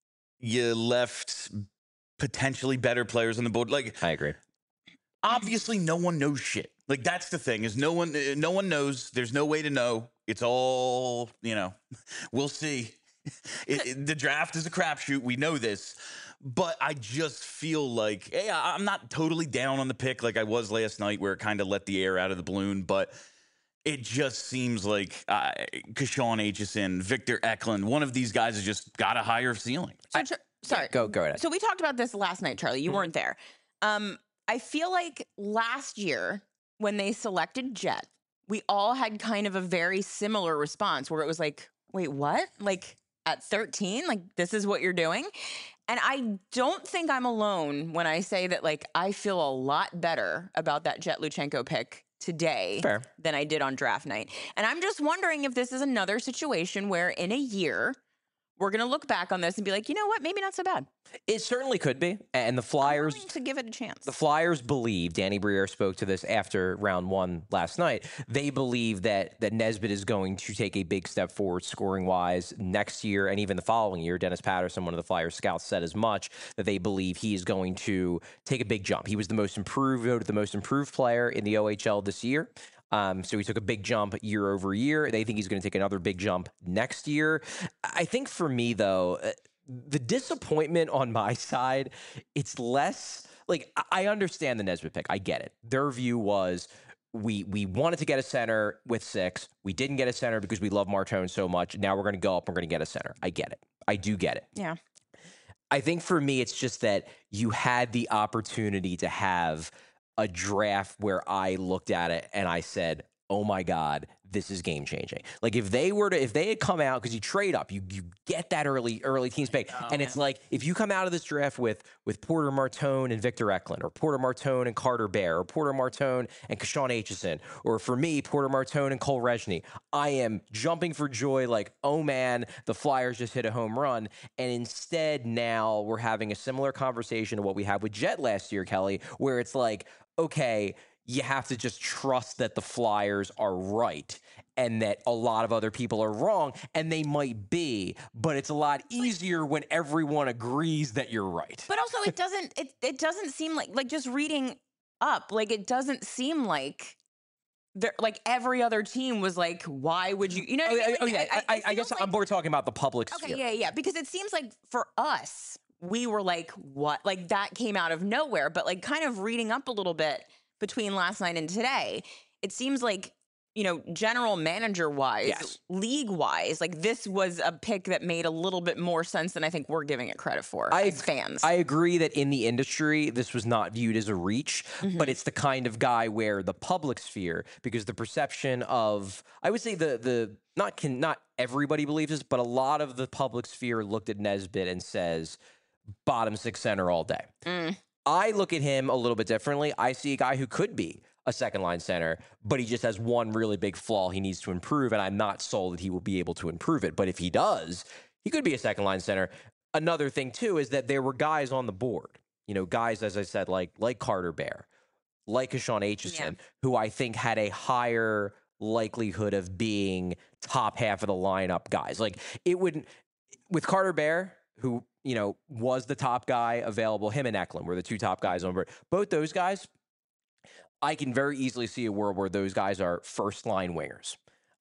you left potentially better players on the board. Like I agree. obviously, no one knows shit. Like that's the thing is no one, uh, no one knows. There's no way to know. It's all you know. We'll see. It, it- the draft is a crapshoot. We know this, but I just feel like, hey, I- I'm not totally down on the pick like I was last night, where it kind of let the air out of the balloon. But it just seems like uh, Kashawn Aitchison, Victor Eklund, one of these guys has just got a higher ceiling. So, Char- sorry. Go, go ahead. So we talked about this last night, Charlie. You weren't there. Um, I feel like last year when they selected Jet, we all had kind of a very similar response where it was like, wait, what? Like at thirteen, like this is what you're doing? And I don't think I'm alone when I say that like I feel a lot better about that Jet Luchenko pick today Fair. than I did on draft night. And I'm just wondering if this is another situation where in a year we're going to look back on this and be like, you know what? Maybe not so bad. It certainly could be. And the Flyers, I'm willing to give it a chance. the Flyers believe, Danny Briere spoke to this after round one last night. They believe that that Nesbitt is going to take a big step forward scoring wise next year and even the following year. Dennis Patterson, one of the Flyers scouts, said as much, that they believe he is going to take a big jump. He was the most improved, voted the most improved player in the O H L this year. Um, so he took a big jump year over year. They think he's going to take another big jump next year. I think for me, though, uh, the disappointment on my side, it's less like I I understand the Nesbitt pick. I get it. Their view was we we wanted to get a center with six. We didn't get a center because we love Martone so much. Now we're going to go up. We're going to get a center. I get it. I do get it. Yeah. I think for me, it's just that you had the opportunity to have a draft where I looked at it and I said, oh my God, this is game changing. Like if they were to, if they had come out, because you trade up, you you get that early early teams pick, and it's like if you come out of this draft with with Porter Martone and Victor Eklund, or Porter Martone and Carter Bear, or Porter Martone and Kashawn Aitchison, or for me, Porter Martone and Cole Resney, I am jumping for joy like, oh man, the Flyers just hit a home run. And instead now we're having a similar conversation to what we had with Jet last year, Kelly, where it's like, okay, you have to just trust that the Flyers are right and that a lot of other people are wrong, and they might be, but it's a lot easier when everyone agrees that you're right. But also it doesn't it it doesn't seem like like just reading up, like it doesn't seem like there like every other team was like, why would you you know what Oh, I mean? yeah, oh, Like, yeah, it- I, it I, I guess feels I'm like- more talking about the public Okay, sphere. yeah, yeah. Because it seems like for us, we were like, what? Like that came out of nowhere. But like kind of reading up a little bit between last night and today, it seems like you know, general manager wise, Yes. league wise, like this was a pick that made a little bit more sense than I think we're giving it credit for I, as fans. I agree that in the industry, this was not viewed as a reach, Mhm. but it's the kind of guy where the public sphere, because the perception of, I would say the, the, not can, not everybody believes this, but a lot of the public sphere looked at Nesbitt and says, bottom six center all day. Mm. I look at him a little bit differently. I see a guy who could be a second line center, but he just has one really big flaw he needs to improve, and I'm not sold that he will be able to improve it. But if he does, he could be a second line center. Another thing, too, is that there were guys on the board, you know, guys, as I said, like like Carter Bear, like Hashawn Aitchison, Yeah. who I think had a higher likelihood of being top half of the lineup guys. Like it would, with Carter Bear, who, you know, was the top guy available, him and Eklund were the two top guys on board. Both those guys, I can very easily see a world where those guys are first line wingers.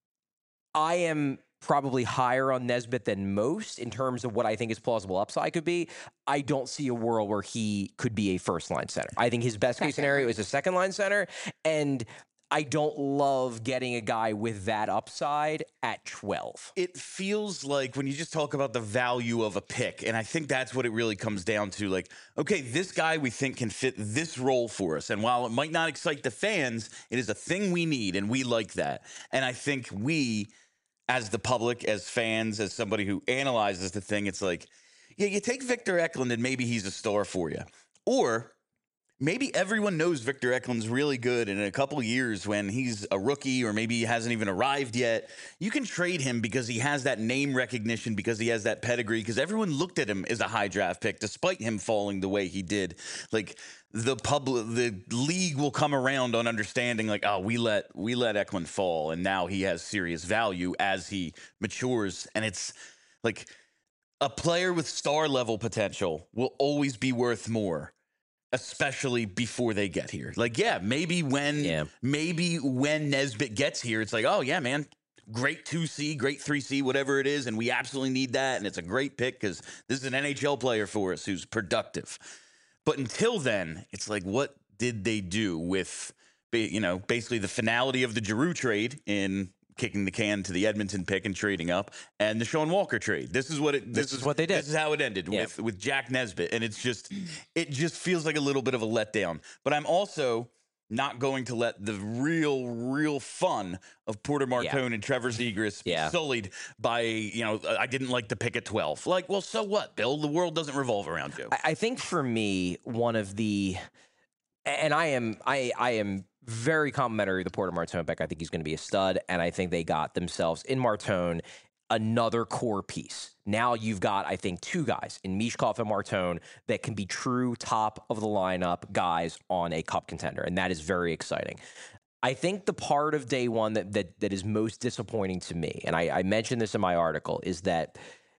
I am probably higher on Nesbitt than most in terms of what I think his plausible upside could be. I don't see a world where he could be a first line center. I think his best case scenario is a second line center, and I don't love getting a guy with that upside at twelve. It feels like when you just talk about the value of a pick, and I think that's what it really comes down to. Like, okay, this guy we think can fit this role for us. And while it might not excite the fans, it is a thing we need, and we like that. And I think we, as the public, as fans, as somebody who analyzes the thing, it's like, yeah, you take Victor Eklund and maybe he's a star for you. Or maybe everyone knows Victor Eklund's really good, and in a couple of years when he's a rookie or maybe he hasn't even arrived yet, you can trade him because he has that name recognition, because he has that pedigree, because everyone looked at him as a high draft pick despite him falling the way he did. Like the public, the league will come around on understanding like, oh, we let we let Eklund fall, and now he has serious value as he matures. And it's like a player with star level potential will always be worth more, especially before they get here. Like, yeah, maybe when Yeah. maybe when Nesbitt gets here, it's like, oh yeah, man, great two C, great three C, whatever it is, and we absolutely need that, and it's a great pick because this is an N H L player for us who's productive. But until then, it's like, what did they do with, you know, basically the finality of the Giroux trade in kicking the can to the Edmonton pick and trading up, and the Sean Walker trade? This is what it. This, This is what they did. This is how it ended Yeah. with with Jack Nesbitt, and it's just, it just feels like a little bit of a letdown. But I'm also not going to let the real, real fun of Porter Martone and Trevor Zegras be Yeah. sullied by, you know, I didn't like the pick at twelve. Like, well, so what, Bill? The world doesn't revolve around you. I, I think for me, one of the, and I am, I, I am very complimentary of the Porter Martone pick. I think he's going to be a stud, and I think they got themselves in Martone another core piece. Now you've got, I think, two guys in Mishkov and Martone that can be true top of the lineup guys on a cup contender, and that is very exciting. I think the part of day one that that, that is most disappointing to me, and I, I mentioned this in my article, is that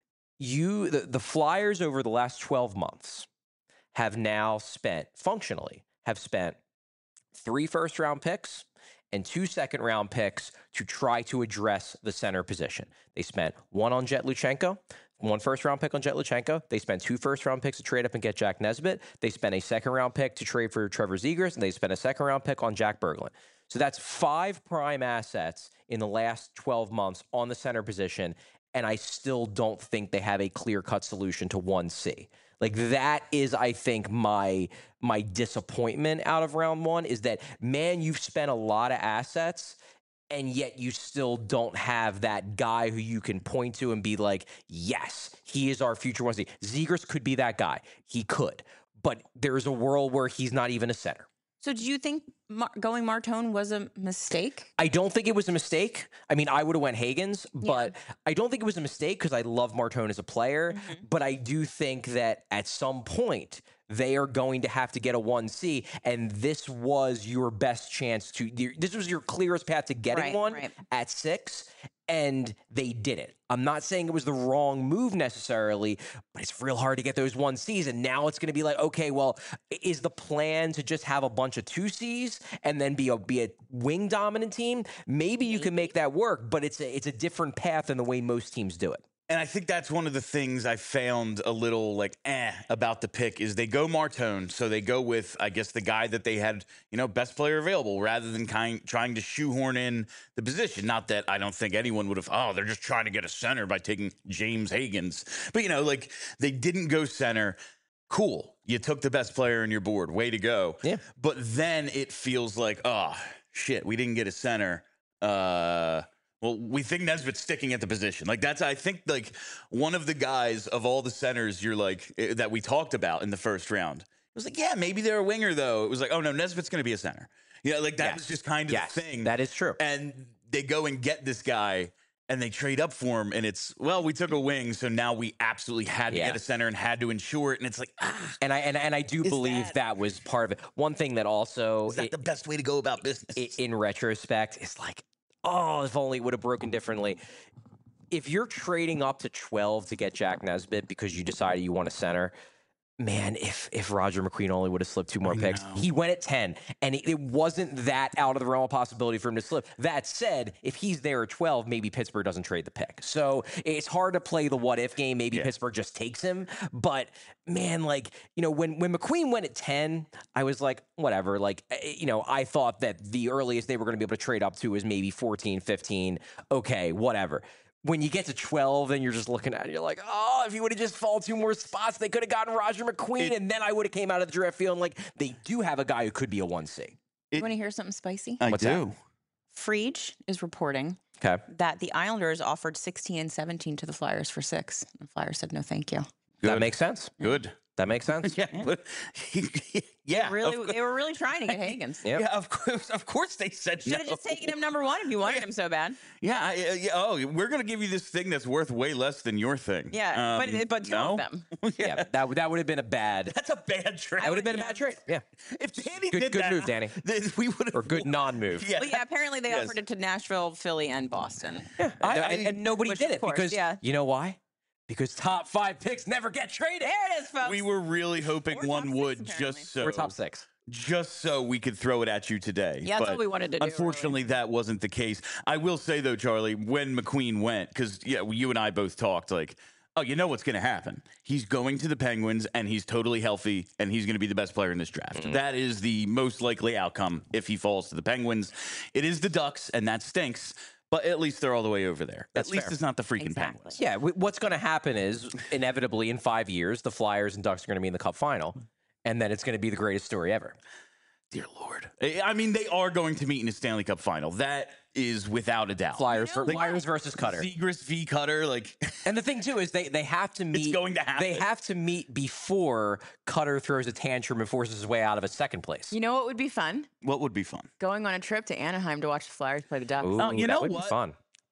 you the, the Flyers over the last twelve months have now spent, functionally, have spent three first round picks and two second round picks to try to address the center position. They spent one on Jet Luchenko, one first round pick on Jet Luchenko. They spent two first round picks to trade up and get Jack Nesbitt. They spent a second round pick to trade for Trevor Zegras, and they spent a second round pick on Jack Berglund. So that's five prime assets in the last twelve months on the center position, and I still don't think they have a clear-cut solution to one C. Like, that is, I think, my my disappointment out of round one, is that, man, you've spent a lot of assets, and yet you still don't have that guy who you can point to and be like, yes, he is our future one C. Zegras could be that guy. He could. But there's a world where he's not even a center. So do you think Mar- going Martone was a mistake? I don't think it was a mistake. I mean, I would have went Hagens, but yeah. I don't think it was a mistake because I love Martone as a player. Mm-hmm. But I do think that at some point they are going to have to get a one C, and this was your best chance to. This was your clearest path to getting right, one right. at six, and they did it. I'm not saying it was the wrong move necessarily, but it's real hard to get those one C's. And now it's going to be like, okay, well, is the plan to just have a bunch of two C's and then be a be a wing dominant team? Maybe you can make that work, but it's a, it's a different path than the way most teams do it. And I think that's one of the things I found a little like eh about the pick is they go Martone, so they go with I guess the guy that they had, you know, best player available rather than kind trying to shoehorn in the position. Not that I don't think anyone would have. Oh, they're just trying to get a center by taking James Higgins, but you know, like they didn't go center. Cool, you took the best player on your board. Way to go. Yeah. But then it feels like oh shit, we didn't get a center. Uh. Well, we think Nesbitt's sticking at the position. Like that's, I think, like one of the guys of all the centers you're like eh, that we talked about in the first round. It was like, yeah, maybe they're a winger though. It was like, oh no, Nesbitt's going to be a center. You know, like that Yes. was just kind of Yes, the thing. that is true. And they go and get this guy and they trade up for him. And it's, well, we took a wing. So now we absolutely had to Yeah. get a center and had to ensure it. And it's like, ah, And I and, and I do Is believe that- that, was part of it. One thing that also, is that it- the best way to go about business? i- in retrospect, is like, oh, if only it would have broken differently. If you're trading up to twelve to get Jack Nesbitt because you decided you want a center, man, if if Roger McQueen only would have slipped two more I picks, know. he went at ten, and it, it wasn't that out of the realm of possibility for him to slip. That said, if he's there at twelve, maybe Pittsburgh doesn't trade the pick. So it's hard to play the what if game. Maybe Yeah. Pittsburgh just takes him. But man, like, you know, when when McQueen went at ten, I was like, whatever. Like, eh, you know, I thought that the earliest they were going to be able to trade up to was maybe fourteen, fifteen. Okay, whatever. When you get to twelve and you're just looking at it, you're like, oh, if you would have just fallen two more spots, they could have gotten Roger McQueen, It- and then I would have came out of the draft feeling like they do have a guy who could be a one C. It- You want to hear something spicy? I What's do. Frege is reporting Okay. that the Islanders offered sixteen and seventeen to the Flyers for six. The Flyers said no, thank you. Good. That makes sense. Good. That makes sense. Yeah. but- yeah. Really, of they were really trying to get Higgins. Yep. Yeah, of course, of course they said Should have no. just taken him number one if you wanted him so bad. Yeah, I, uh, yeah. Oh, we're gonna give you this thing that's worth way less than your thing. Yeah, Um, but but two no? of them. yeah. Yeah, that, would- that would have been a bad. That's a bad trade. That would have been a bad trade. Yeah. If Danny Good- did good that, move, Danny. then we would have Or good non-move. Yeah. Well, yeah, apparently they Yes. offered it to Nashville, Philly, and Boston. Yeah. I- and, I- and nobody which, did of it course, because, yeah. you know why? Because top five picks never get traded. There it is, folks. We were really hoping Or top one six, would apparently. just so We're top six. just so we could throw it at you today. Yeah, that's But what we wanted to do, Unfortunately, that wasn't the case. I will say though, Charlie, when McQueen went, because yeah, you and I both talked like, oh, you know what's going to happen? He's going to the Penguins, and he's totally healthy, and he's going to be the best player in this draft. Mm-hmm. That is the most likely outcome if he falls to the Penguins. It is the Ducks, and that stinks. But at least they're all the way over there. That's at least fair. it's not the freaking Exactly. Penguins. Yeah, w- what's going to happen is inevitably in five years, the Flyers and Ducks are going to be in the Cup final, and then it's going to be the greatest story ever. Dear Lord. I I mean, they are going to meet in a Stanley Cup final. That is without a doubt. Flyers, You know ver- what? Flyers versus Cutter. Zegras v. Cutter, like And the thing too is they they have to meet. going to happen. They have to meet before Cutter throws a tantrum and forces his way out of a second place. You know what would be fun? what would be fun? Going on a trip to Anaheim to watch the Flyers play the Ducks. Ooh, Oh, you that know would what? be fun.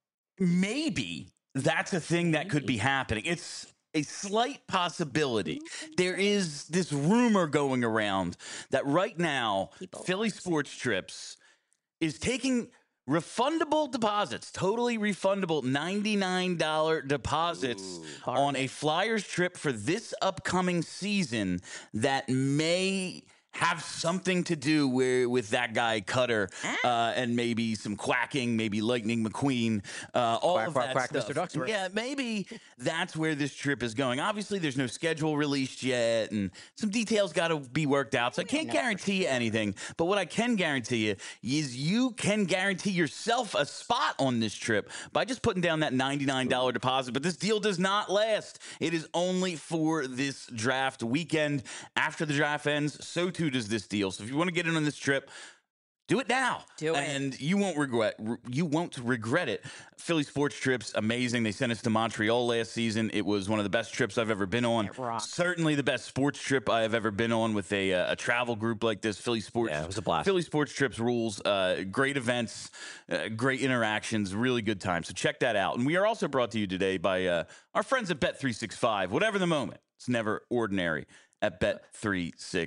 Maybe that's a thing that could be happening. It's a slight possibility. There is this rumor going around that right now, People Philly Sports Trips is taking refundable deposits, totally refundable ninety-nine dollars deposits on a Flyers trip for this upcoming season that may have something to do where, with that guy Cutter uh, and maybe some quacking, maybe Lightning McQueen, uh, all Quack, of quack, that quack, stuff. Mister Ducksworth. Yeah, maybe that's where this trip is going. Obviously, there's no schedule released yet, and some details got to be worked out. So I can't guarantee you anything. But what I can guarantee you is you can guarantee yourself a spot on this trip by just putting down that ninety-nine dollars deposit. But this deal does not last. It is only for this draft weekend. After the draft ends, so too does this deal. So if you want to get in on this trip, do it now. Do it. And you won't regret you won't regret it. Philly Sports Trips, amazing. They sent us to Montreal last season. It was one of the best trips I've ever been on. It rocked. Certainly the best sports trip I have ever been on with a, uh, a travel group like this. Philly Sports. Yeah, it was a blast. Philly Sports Trips rules. Uh, great events, uh, great interactions, really good time. So check that out. And we are also brought to you today by uh, our friends at Bet three sixty-five. Whatever the moment, it's never ordinary at Bet three sixty-five.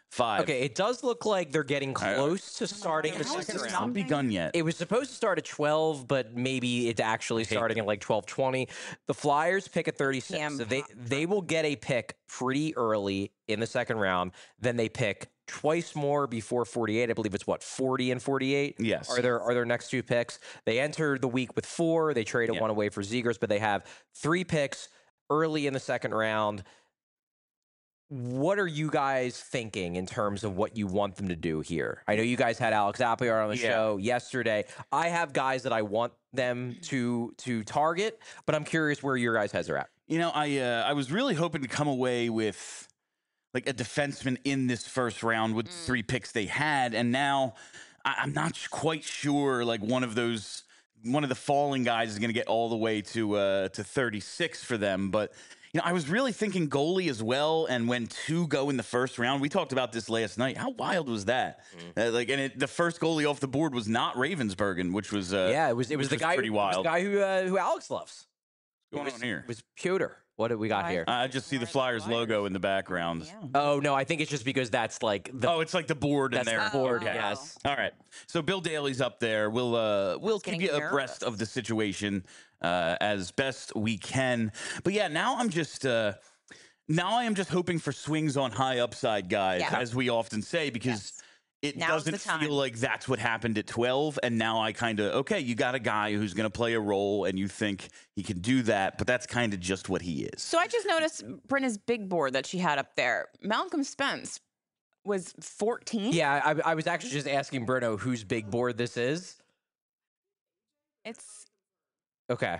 five. Okay, it does look like they're getting close uh, to starting how the has second this round. not begun yet? It was supposed to start at twelve, but maybe it's actually starting at like twelve twenty. The Flyers pick at thirty-six. So they, they will get a pick pretty early in the second round. Then they pick twice more before forty-eight. I believe it's what, forty and forty-eight? Yes. Are their, are their next two picks. They enter the week with four. They traded Yeah. one away for Zegers, but they have three picks early in the second round. What are you guys thinking in terms of what you want them to do here? I know you guys had Alex Appiar on the Yeah. show yesterday. I have guys that I want them to to target, but I'm curious where your guys' heads are at. You know, I uh, I was really hoping to come away with like a defenseman in this first round with the three picks they had, and now I- I'm not quite sure. Like one of those, one of the falling guys is going to get all the way to uh, to thirty-six for them, but. You know, I was really thinking goalie as well, and when two go in the first round, we talked about this last night. How wild was that? Mm. Uh, like, and it, the first goalie off the board was not Ravensburgen, which was uh, yeah, it was it was the was guy pretty who, wild. It was the guy who uh, who Alex loves. What's going was, on here? It was Piotr. What do we got here? I just see the Flyers, Flyers logo in the background. Yeah. Oh no, I think it's just because that's like the oh, it's like the board in that's there. the board. Oh. Yes. All right. So Bill Daly's up there. We'll uh, we'll keep you nervous. abreast of the situation uh, as best we can. But yeah, now I'm just. Uh, Now I am just hoping for swings on high upside guys, Yeah. as we often say, because Yes. it Now's doesn't the time. feel like that's what happened at twelve. And now I kind of, okay, you got a guy who's going to play a role and you think he can do that, but that's kind of just what he is. So I just noticed Brenna's big board that she had up there. Malcolm Spence was fourteen. Yeah, I, I was actually just asking Bruno whose big board this is. It's Okay.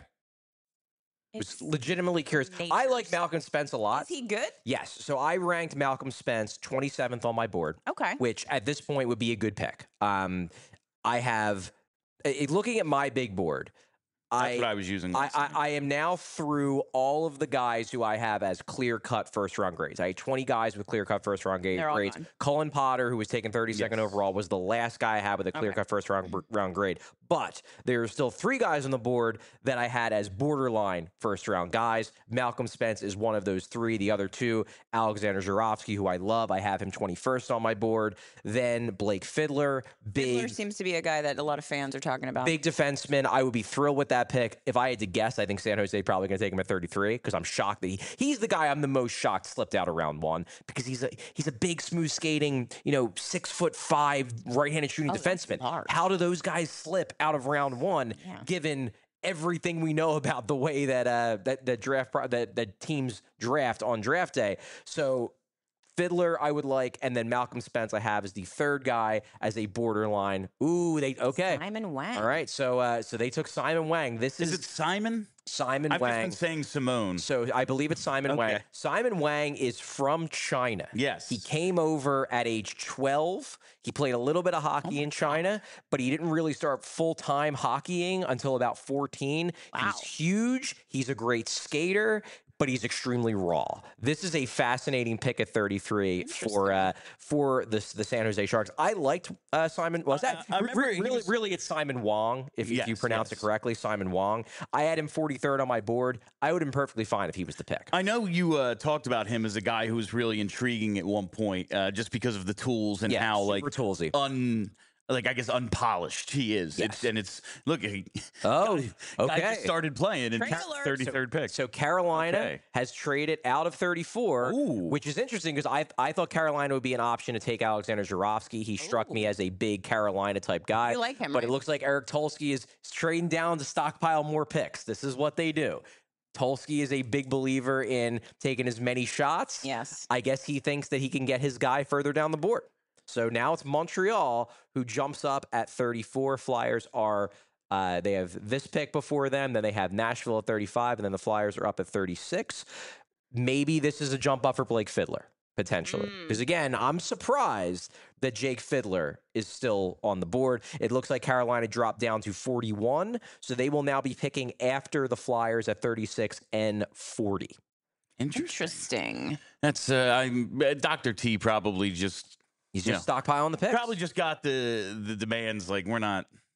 I was it's legitimately curious. I like Nature's. Malcolm Spence a lot. Is he good? Yes. So I ranked Malcolm Spence twenty-seventh on my board, Okay. which at this point would be a good pick. Um, I have, uh, looking at my big board, That's I, what I was using. I, last I, night. I am now through all of the guys who I have as clear-cut first-round grades. I had twenty guys with clear-cut first-round grade, They're all grades. gone. Cullen Potter, who was taken thirty-second Yes. overall, was the last guy I had with a clear-cut first-round round grade. But there are still three guys on the board that I had as borderline first-round guys. Malcolm Spence is one of those three. The other two, Alexander Zurovsky, who I love. I have him twenty-first on my board. Then Blake Fiddler, big Fiddler seems to be a guy that a lot of fans are talking about. Big defenseman. I would be thrilled with that pick. If I had to guess, I think San Jose probably going to take him at thirty-three because I'm shocked that he, he's the guy I'm the most shocked slipped out of round one because he's a he's a big, smooth skating, you know, six foot five right-handed shooting Oh, that's defenseman. large. How do those guys slip out of round one Yeah. given everything we know about the way that uh that that draft pro- that that teams draft on draft day? So Fiddler, I would like, and then Malcolm Spence I have as the third guy as a borderline. Ooh, they okay. Simon Wang. All right, so uh, so they took Simon Wang. This is, Is it Simon? Simon I've Wang. just been saying Simone. So I believe it's Simon Wang. Okay. Simon Wang is from China. Yes. He came over at age twelve. He played a little bit of hockey in China, but he didn't really start full-time hockeying until about fourteen. Wow. He's huge. He's a great skater, but he's extremely raw. This is a fascinating pick at thirty-three for uh, for the the San Jose Sharks. I liked uh, Simon. Was that I- I remember really, he really, was- really? It's Simon Wong, if, if you Yes, pronounce yes. it correctly. Simon Wong. I had him forty-third on my board. I would have been perfectly fine if he was the pick. I know you uh, talked about him as a guy who was really intriguing at one point, uh, just because of the tools and Yeah, how like super toolsy. un like I guess unpolished he is. Yes. It's and it's look. He, Oh, guy okay. just started playing and Trade alert. thirty-third pick. So Carolina Okay. has traded out of thirty-four, Ooh. which is interesting because I I thought Carolina would be an option to take Alexander Zurovsky. He struck me as a big Carolina type guy. You like him, but it right? looks like Eric Tulsky is trading down to stockpile more picks. This is what they do. Tulsky is a big believer in taking as many shots. Yes. I guess he thinks that he can get his guy further down the board. So now it's Montreal who jumps up at thirty-four. Flyers are uh, they have this pick before them, then they have Nashville at thirty-five, and then the Flyers are up at thirty-six. Maybe this is a jump up for Blake Fiddler, potentially. Mm. Because again, I'm surprised that Jake Fiddler is still on the board. It looks like Carolina dropped down to forty-one, so they will now be picking after the Flyers at thirty-six and forty. Interesting. Interesting. That's uh, I'm uh, Doctor T probably just He's you just know, stockpiling the picks. probably just got the the demands like we're not.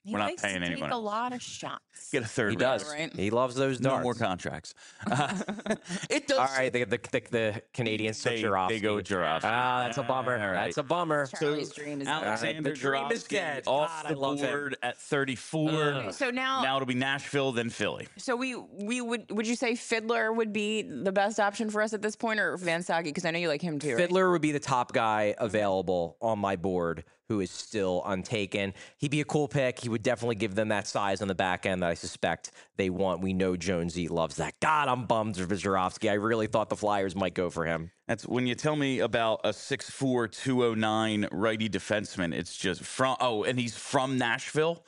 He We're not likes to paying take anyone a else. lot of shots. Get a third. He round. does. right? He loves those No darts. more contracts. Uh, it does. All right, the, the, the, the Canadians took They- Jarofsky. they go with Jarofsky. Ah, that's a bummer. All right. That's a bummer. Charlie's dream is dead. Alexander The dream is Jarofsky dead. off God, I the love him. board at thirty-four. Ugh. So now, Now it'll be Nashville, then Philly. so we we would would you say Fiddler would be the best option for us at this point, or Van Sage? Because I know you like him too. Right? Fiddler would be the top guy available on my board who is still untaken. He'd be a cool pick. He would definitely give them that size on the back end that I suspect they want. We know Jonesy loves that. God, I'm bummed for Jarofsky. I really thought the Flyers might go for him. That's when you tell me about a six four, two oh nine righty defenseman. It's just from, oh, and he's from Nashville.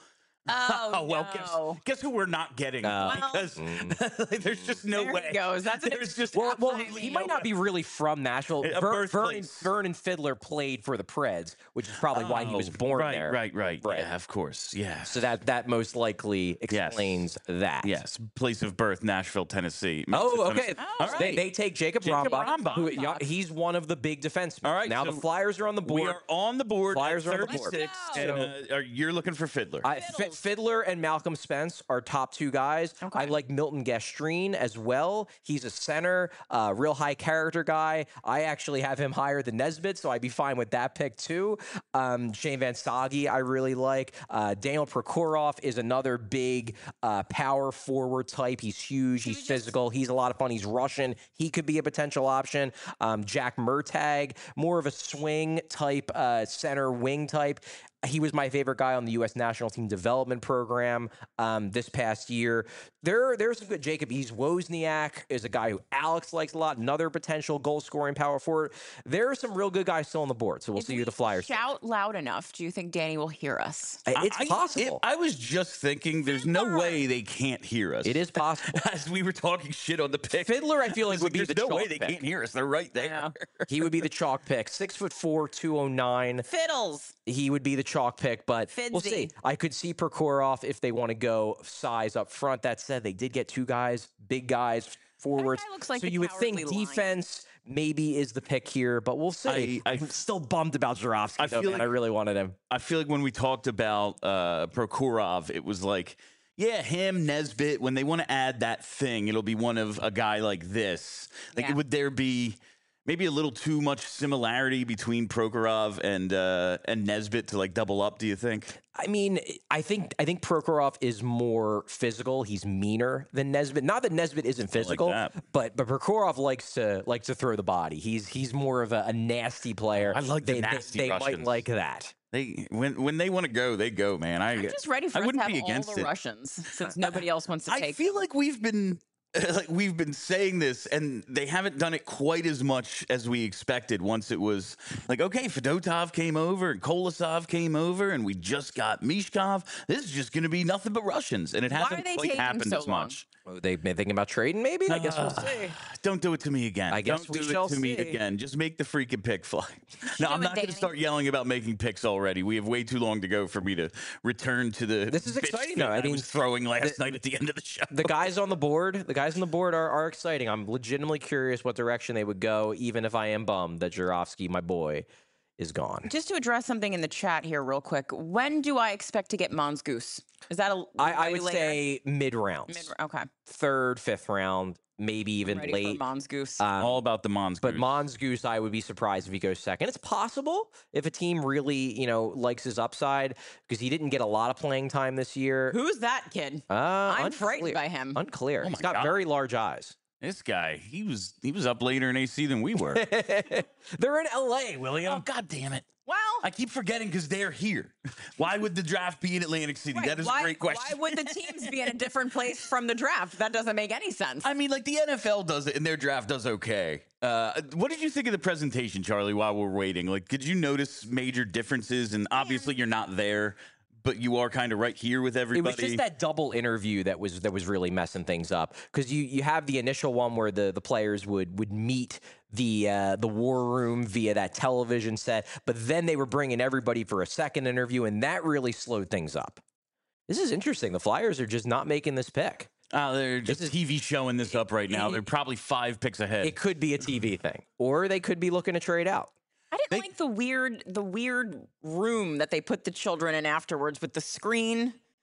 Oh, well, no. guess, guess who we're not getting? Uh, because like, there's just no There way. he goes. That's an There's just Well, well, absolutely he no might not way. be really from Nashville. A Ver, Vernon, birthplace. Vernon Fiddler played for the Preds, which is probably why he was Oh, born right, there. Right, right, Right. Yeah, of course. Yeah. So that that most likely Yes. explains that. Yes, place of birth, Nashville, Tennessee. Makes Oh, a ton of okay. sense. Oh, All They, right. they take Jacob, Jacob Rambach, Rambach. who yeah, he's one of the big defensemen. All right, Now so the Flyers are on the board. We are on the board. Flyers at are on the board. thirty-six, Let's and, go. uh, are- you're looking for Fiddler. I, F- Fiddler and Malcolm Spence are top two guys. Okay. I like Milton Gastrine as well. He's a center, uh, real high character guy. I actually have him higher than Nesbitt, so I'd be fine with that pick too. Um, Shane Van Sage, I really like. Uh, Daniel Prokhorov is another big uh, power forward type. He's huge. He's just- physical. He's a lot of fun. He's Russian. He could be a potential option. Um, Jack Murtag, more of a swing type, uh, center wing type. He was my favorite guy on the U S national team development program um, this past year. There, there's some good. Jacob East Wozniak is a guy who Alex likes a lot. Another potential goal scoring power forward. There are some real good guys still on the board. So we'll If see we who the Flyers. shout loud enough, do you think Danny will hear us? I- It's I- possible. I, I was just thinking, there's no Fiddler. way they can't hear us. It is possible. As we were talking shit on the pick. Fiddler, I feel like It's would be there's the no chalk way they pick. can't hear us. They're right there. Yeah. He would be the chalk pick. Six foot four, two oh nine. Fiddles. He would be the chalk pick, but we'll Fidsy. see. I could see Prokhorov if they want to go size up front. That said, they did get two guys, big guys, forwards. guy looks like so the you would think cowardly lion. defense maybe is the pick here, but we'll see. I- I, am still bummed about Jarofsky, I though, feel man. like- I really wanted him. I feel like when we talked about uh, Prokhorov, it was like, yeah, him, Nesbitt, when they want to add that thing, it'll be one of a guy like this. Like, Yeah. would there be maybe a little too much similarity between Prokhorov and uh, and Nesbitt to like double up, do you think? I mean, I think I think Prokhorov is more physical. He's meaner than Nesbitt. Not that Nesbitt isn't physical, that. but but Prokhorov likes to likes to throw the body. He's he's more of a, a nasty player. I like the they, nasty They, they might Russians. like that. They when when they want to go, they go, man. I I'm just ready for I us to wouldn't have be all against the it. Russians, since nobody else wants to I take. feel like we've been like we've been saying this, and they haven't done it quite as much as we expected. Once it was like, okay, Fedotov came over and Kolosov came over, and we just got Mishkov. This is just going to be nothing but Russians, and it Why are hasn't they quite taking happened so as long? much. Oh, they've been thinking about trading, maybe. I guess we'll Uh, see. Don't do it to me again. I guess Don't we do shall it to me see. again. Just make the freaking pick fly. No, do I'm it, not going to Danny. start yelling about making picks already. We have way too long to go for me to return to the. This is bitch exciting, fit though. I mean, was throwing last night at the end of the show. The guys on the board, the guys on the board are, are exciting. I'm legitimately curious what direction they would go, even if I am bummed that Jarofsky, my boy, is gone. Just to address something in the chat here, real quick. When do I expect to get Mons Goose? Is that a? I, I way would later? say mid rounds, Mid, okay. third, fifth round, maybe even Ready late. for Mons Goose. Um, All about the Mons. But Goose. Mons Goose, I would be surprised if he goes second. It's possible if a team really, you know, likes his upside because he didn't get a lot of playing time this year. Who's that kid? Uh, I'm frightened unclear. by him. Unclear. Oh He's my got God. very large eyes. This guy, he was he was up later in A C than we were. They're in L A, William. Oh, God damn it. Well, I keep forgetting because they're here. Why would the draft be in Atlantic City? right, That is why, a great question. Why would the teams be in a different place from the draft? That doesn't make any sense. I mean, like the N F L does it and their draft does okay. Uh, what did you think of the presentation, Charlie, while we're waiting? Like, did you notice major differences? And obviously you're not there, but you are kind of right here with It everybody. was just that double interview that was that was really messing things up because you you have the initial one where the, the players would would meet the uh, the war room via that television set, but then they were bringing everybody for a second interview, and that really slowed things up. This is interesting. The Flyers are just not making this pick. Uh, they're just is- T V showing this up right now. it- They're probably five picks ahead. It could be a T V thing, or they could be looking to trade out. I didn't They- like the weird the weird room that they put the children in afterwards with the screen.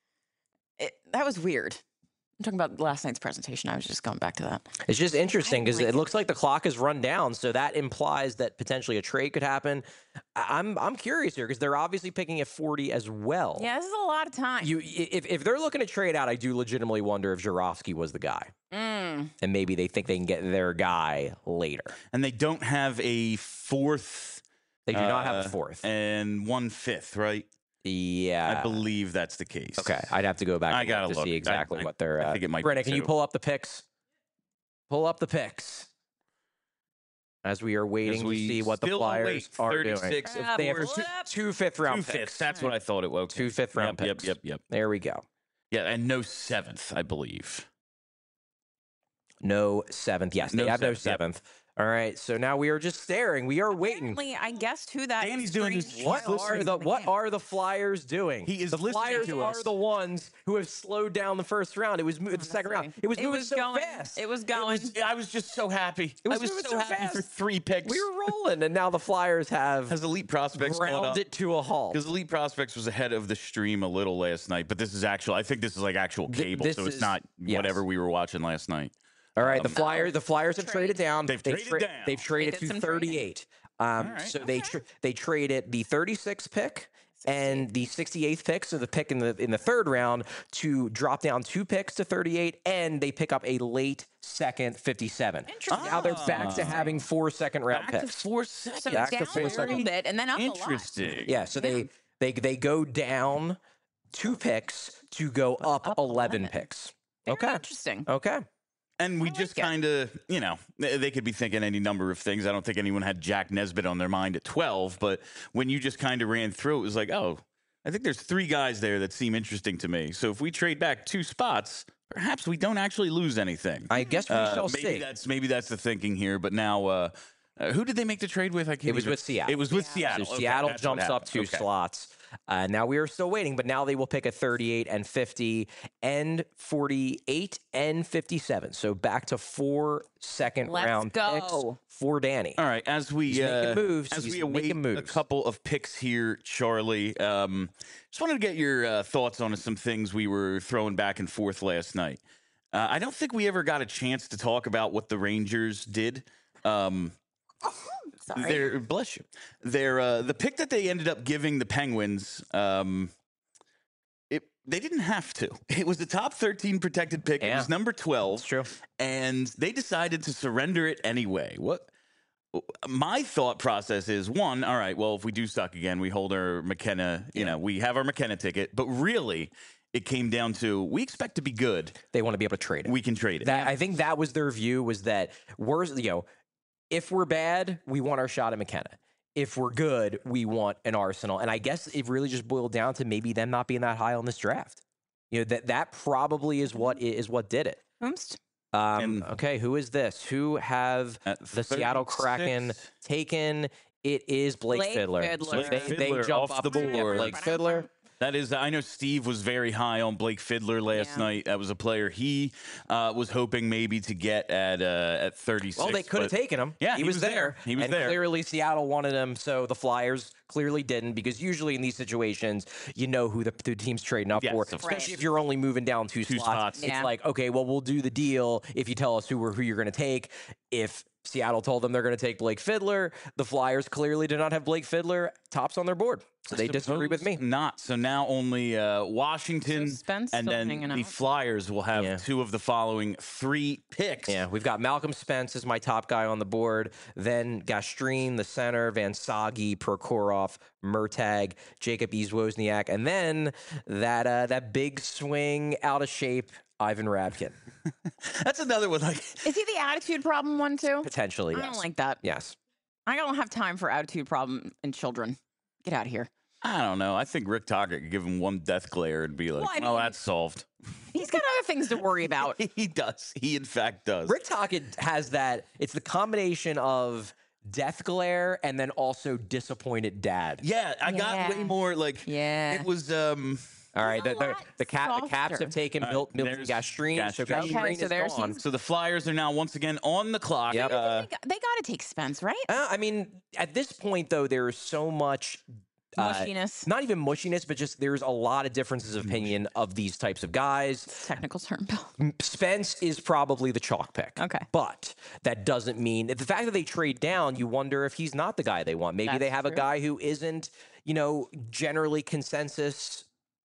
it, that was weird. I'm talking about last night's presentation. I was just going back to that. It's just interesting because like it looks like the clock is run down, so that implies that potentially a trade could happen. I- I'm I'm curious here because they're obviously picking at forty as well. Yeah, this is a lot of time. You if if they're looking to trade out, I do legitimately wonder if Jarofsky was the guy, Mm. and maybe they think they can get their guy later. And they don't have a fourth. They do not have uh, a fourth. and one fifth, right? Yeah, I believe that's the case. Okay, I'd have to go back I and gotta look to look. see I- exactly I- what they're. I Uh, think it might be Brennan, can you two. pull up the picks? Pull up the picks. As we are waiting we to see what the still Flyers await are doing. thirty-six of They have course. two, two fifth round Two picks. fifths. That's what I thought it was. Two fifth round yep, picks. Yep, yep, yep. There we go. Yeah, and no seventh, I believe. No seventh. Yes, they No have no seventh, yep. seventh. All right, so now we are just staring. We are waiting. Apparently, I guessed who that. Danny's doing his- strange What He's are listening the to the What game. are the Flyers doing? He is the listening Flyers to are us. the ones who have slowed down the first round. It was mo- the second round. Honestly. It was It moving was so going. fast. It was going. I was just so happy. It was I was moving so, so happy for fast. three picks. We were rolling, and now the Flyers have Has elite prospects caught ground up? it to a halt. Because Elite Prospects was ahead of the stream a little last night, but this is actual. I think this is like actual Th- cable, this so it's is- not yes. whatever we were watching last night. All right, the Um, Flyers. The Flyers have Trade. traded down. They've traded tra- down. They've traded did to some trading. thirty-eight. Um, All right. so they Okay. tra- they traded the thirty-sixth pick and the sixty-eighth pick, so the pick in the in the third round, to drop down two picks to thirty-eight, and they pick up a late second fifty-seven. Interesting. Now they're back to Ah. having four second round Back to picks. four So seconds. Back to down four a little seconds. bit and then up a lot. Interesting. Yeah, so they they they go down two picks to go up, up eleven eleven. picks. Very Okay. Interesting. Okay. And we I like just it. kind of, you know, they, they could be thinking any number of things. I don't think anyone had Jack Nesbitt on their mind at twelve, but when you just kind of ran through, it was like, oh, I think there's three guys there that seem interesting to me. So if we trade back two spots, perhaps we don't actually lose anything. I guess we Uh, shall maybe see. that's maybe that's the thinking here. But now, uh, uh, who did they make the trade with? I can't It was even- with Seattle. It was with Yeah. Seattle. So Okay, Seattle that's what jumps up happened. two Okay. slots. Uh, now we are still waiting, but now they will pick a thirty-eight and fifty and forty-eight and fifty-seven. So back to four second Let's round picks go. for Danny. All right, as we He's making uh, moves. as He's we await making a moves. couple of picks here, Charlie. Um, just wanted to get your uh, thoughts on some things we were throwing back and forth last night. Uh, I don't think we ever got a chance to talk about what the Rangers did. Um, Sorry. their bless you. Their uh, the pick that they ended up giving the Penguins. Um, it they didn't have to. It was the top thirteen protected pick. It Yeah. was number twelve. That's true. And they decided to surrender it anyway. What my thought process is, one, all right, well, if we do suck again, we hold our McKenna, you know, we have our McKenna ticket, but really it came down to we expect to be good. They want to be able to trade it. We can trade it. That I think that was their view, was that we're, you know, if we're bad, we want our shot at McKenna. If we're good, we want an Arsenal. And I guess it really just boiled down to maybe them not being that high on this draft. You know, that that probably is what is what did it. Oops. Um, And- okay, who is this? Who have At the Seattle Kraken thirty-six. taken? It is Blake, Blake Fiddler. Fiddler. So Blake they, they Fiddler jump off up the to- yeah, board. Blake Fiddler. That is, I know Steve was very high on Blake Fiddler last Yeah. night. That was a player he uh, was hoping maybe to get at uh, at thirty-six. Well, they could have but- taken him. Yeah, he, he was, was there. there. He was and there. Clearly, Seattle wanted him, so the Flyers clearly didn't, because usually in these situations, you know who the, the team's trading up Yes, for. of course. Especially if you're only moving down two, Two slots. spots. It's Yeah. like, okay, well, we'll do the deal if you tell us who we're, who you're going to take. If Seattle told them they're going to take Blake Fiddler, the Flyers clearly did not have Blake Fiddler tops on their board, so they disagree with me. Suppose Not. So now only uh, Washington Suspense and still then hanging the out. Flyers will have Yeah. two of the following three picks. Yeah, we've got Malcolm Spence as my top guy on the board. Then Gastreen, the center, Van Sagi, Prokhorov, Murtag, Jacob East-Wozniak, and then that uh, that big swing, out of shape, Ivan Rabkin. That's another one. Like, Is he the attitude problem one too? Potentially, I yes. don't like that. Yes. I don't have time for attitude problem in children. Get out of here. I don't know. I think Rick Tocchet could give him one death glare and be like, Well, I "Well, mean- that's solved." He's got other things to worry about. He does. He in fact does. Rick Tocchet has that. It's the combination of death glare and then also disappointed dad. Yeah, I got Yeah. way more like. Yeah. It was. um All right, the, a the, lot the, cat, the Caps softer. have taken All right, Milt, Milton there's Gastreen, so Gastreen. Gastreen Okay, so is there's gone. his- So the Flyers are now once again on the clock. Yep. Uh, they, got, they got to take Spence, right? Uh, I mean, at this point, though, there is so much uh, Mushiness. not even mushiness, but just there's a lot of differences of opinion of these types of guys. Technical term, Bill. M- Spence is probably the chalk pick. Okay. But that doesn't mean the fact that they trade down, you wonder if he's not the guy they want. Maybe That's they have true. a guy who isn't, you know, generally consensus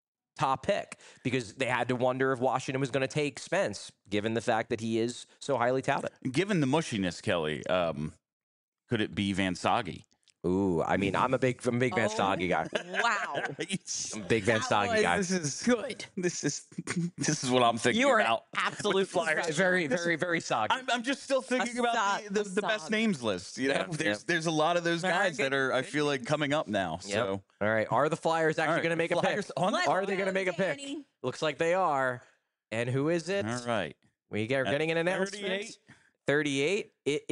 top pick, because they had to wonder if Washington was going to take Spence, given the fact that he is so highly touted. Given the mushiness, Kelly, um, could it be Van Sage? Ooh, I mean, I'm a big, I'm a big Van Oh. Sage guy. Wow. I'm a big Van Sage guy. This is good. This is this is what I'm thinking You are about. absolute Very, very, very, very Sage. I'm, I'm just still thinking about Assad- the, the, the best Assad. names list. You know, Yeah, there's yeah. there's a lot of those Very guys good. that are I feel like coming up now. Yep. So All right. Are the Flyers actually All right, going to make a Flyers pick? on the Let's Are they go, going to make a pick? Danny. Looks like they are. And who is it? all right. We get, At getting an announcement. thirty-eight. thirty-eight. It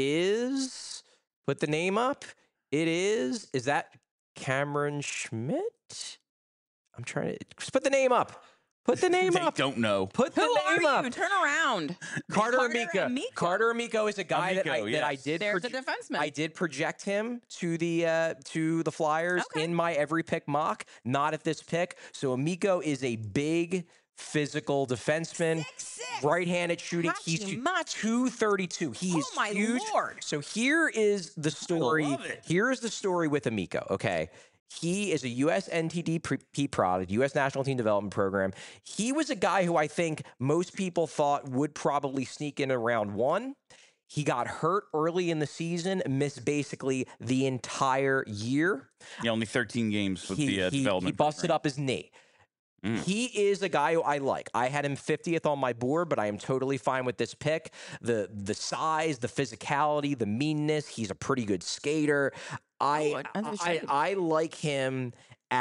is. Put the name up. It is. Is that Cameron Schmidt? I'm trying to just put the name up. Put the name They up. don't know. Put the Who are name you? up. Turn around. Carter, Carter Amico. Amico. Carter Amico is a guy that, I, Amico, that I yes. did. There's a proje- defenseman. I did project him to the uh, to the Flyers Okay. in my every pick mock. Not at this pick. So Amico is a big physical defenseman, Six, six. right-handed shooting. He's Hachi two- Machi. two thirty-two. He Oh is my huge. Lord. So here is the story. love it. Here is the story with Amico. Okay. He is a U S N T D P product, U S National Team Development Program. He was a guy who I think most people thought would probably sneak in around one. He got hurt early in the season, missed basically the entire year. Yeah, only thirteen games with He, the uh, he, development. he busted program. up his knee. Mm. He is a guy who I like. I had him fiftieth on my board, but I am totally fine with this pick. The the size, the physicality, the meanness. He's a pretty good skater. I Oh, I- I I, understand. I like him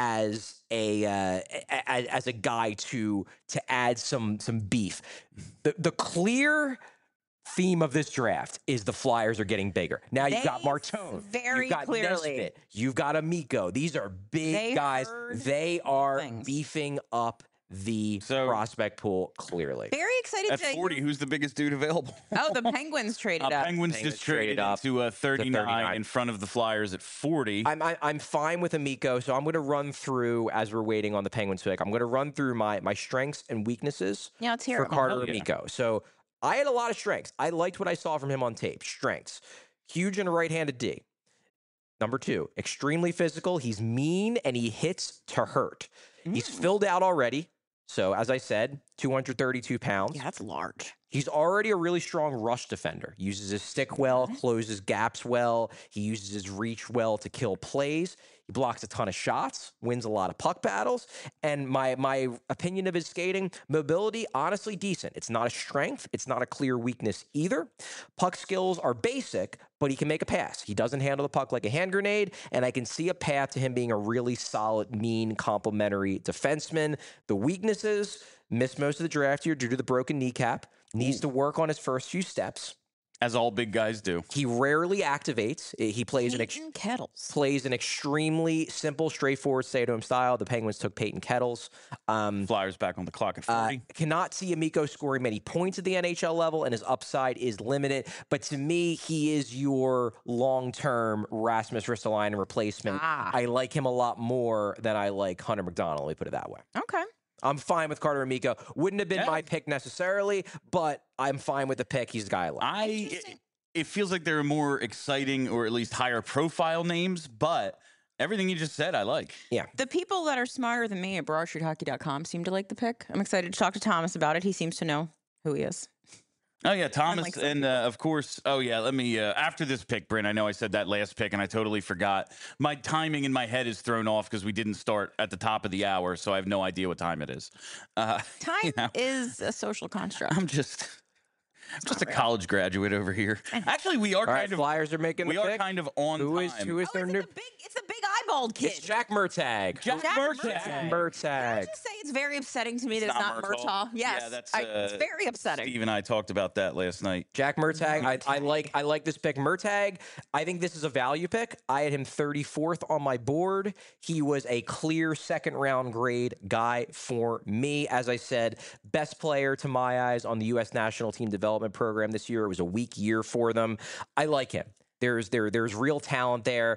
as a uh, as, as a guy to to add some some beef. The the clear theme of this draft is the Flyers are getting bigger. Now you've got They Martone, very you've got clearly- Nesbitt, you've got Amico. These are big They guys. heard They are things. beefing up the So- prospect pool clearly. Very excited At to forty, who's the biggest dude available? Oh, the Penguins traded Uh, up. Penguins Penguins just traded traded up up to uh, thirty-nine, thirty-nine. in front of the Flyers at forty. I'm I, I'm fine with Amico, so I'm going to run through as we're waiting on the Penguins pick. I'm going to run through my my strengths and weaknesses Yeah, let's hear for it. Carter Hell yeah. Amico. So I had a lot of strengths. I liked what I saw from him on tape. Strengths: huge in a right-handed D. Number two, extremely physical. He's mean and he hits to hurt. He's Mm. filled out already. So as I said, two hundred thirty-two pounds. Yeah, that's large. He's already a really strong rush defender. Uses his stick well, closes gaps well. He uses his reach well to kill plays. He blocks a ton of shots, wins a lot of puck battles. And my my opinion of his skating, mobility, honestly decent. It's not a strength. It's not a clear weakness either. Puck skills are basic, but he can make a pass. He doesn't handle the puck like a hand grenade, and I can see a path to him being a really solid, mean, complementary defenseman. The weaknesses, missed most of the draft year due to the broken kneecap. Needs to work on his first few steps. As all big guys do. He rarely activates. I- He plays an ex- Peyton Kettles. plays an extremely simple, straightforward, stay-at-home style. The Penguins took Peyton Kettles. Um, Flyers back on the clock at uh, forty. cannot see Amico scoring many points at the N H L level, and his upside is limited. But to me, he is your long-term Rasmus Ristolainen replacement. Ah. I like him a lot more than I like Hunter McDonald. Let me put it that way. Okay. I'm fine with Carter Amico. Wouldn't have been Yeah. my pick necessarily, but I'm fine with the pick. He's the guy I like. I Interesting. it, it feels like there are more exciting or at least higher profile names, but everything you just said, I like. The people that are smarter than me at broad street hockey dot com seem to like the pick. I'm excited to talk to Thomas about it. He seems to know who he is. Oh yeah, Thomas, Unlike some and uh, of course. Oh yeah, let me. Uh, after this pick, Bryn. I know I said that last pick, and I totally forgot. My timing in my head is thrown off because we didn't start at the top of the hour, so I have no idea what time it is. Uh, Time you know, is a social construct. I'm just, I'm just a college graduate over here. Actually, we are All right, kind of. Flyers are making We the are pick. kind of on Who time. is who is Oh, their it's, new? the big, it's the big eyeballed kid. It's Jack Murtag. Jack Jack Murtag. Murtag. Jack Can I Murtag. just say it's very upsetting to me that It's it's not not Murtaugh. Murtaugh. Yes, Yeah, that's, I, it's uh, very upsetting. Steve and I talked about that last night. Jack Murtag. I, I like I like this pick. Murtag, I think this is a value pick. I had him thirty-fourth on my board. He was a clear second round grade guy for me. As I said, best player to my eyes on the U S National Team Development Program this year. It was a weak year for them. I like him. There's there there's real talent there.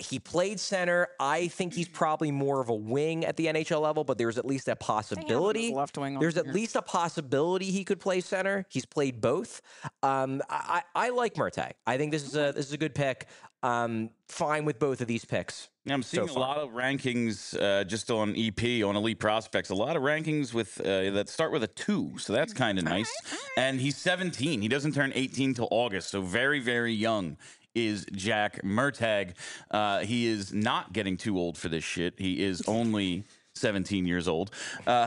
He played center. I think he's probably more of a wing at the N H L level, but there's at least a possibility. Left wing. There's at least a possibility he could play center. He's played both. Um, I, I like Murtagh. I think this is a this is a good pick. Um, fine with both of these picks. I'm seeing so a lot of rankings uh, just on E P, on Elite Prospects. A lot of rankings with uh, that start with a two, so that's kind of nice. All right, all right. And he's seventeen. He doesn't turn eighteen till August, so very, very young is Jack Murtagh. Uh, he is not getting too old for this shit. He is only seventeen years old. Uh,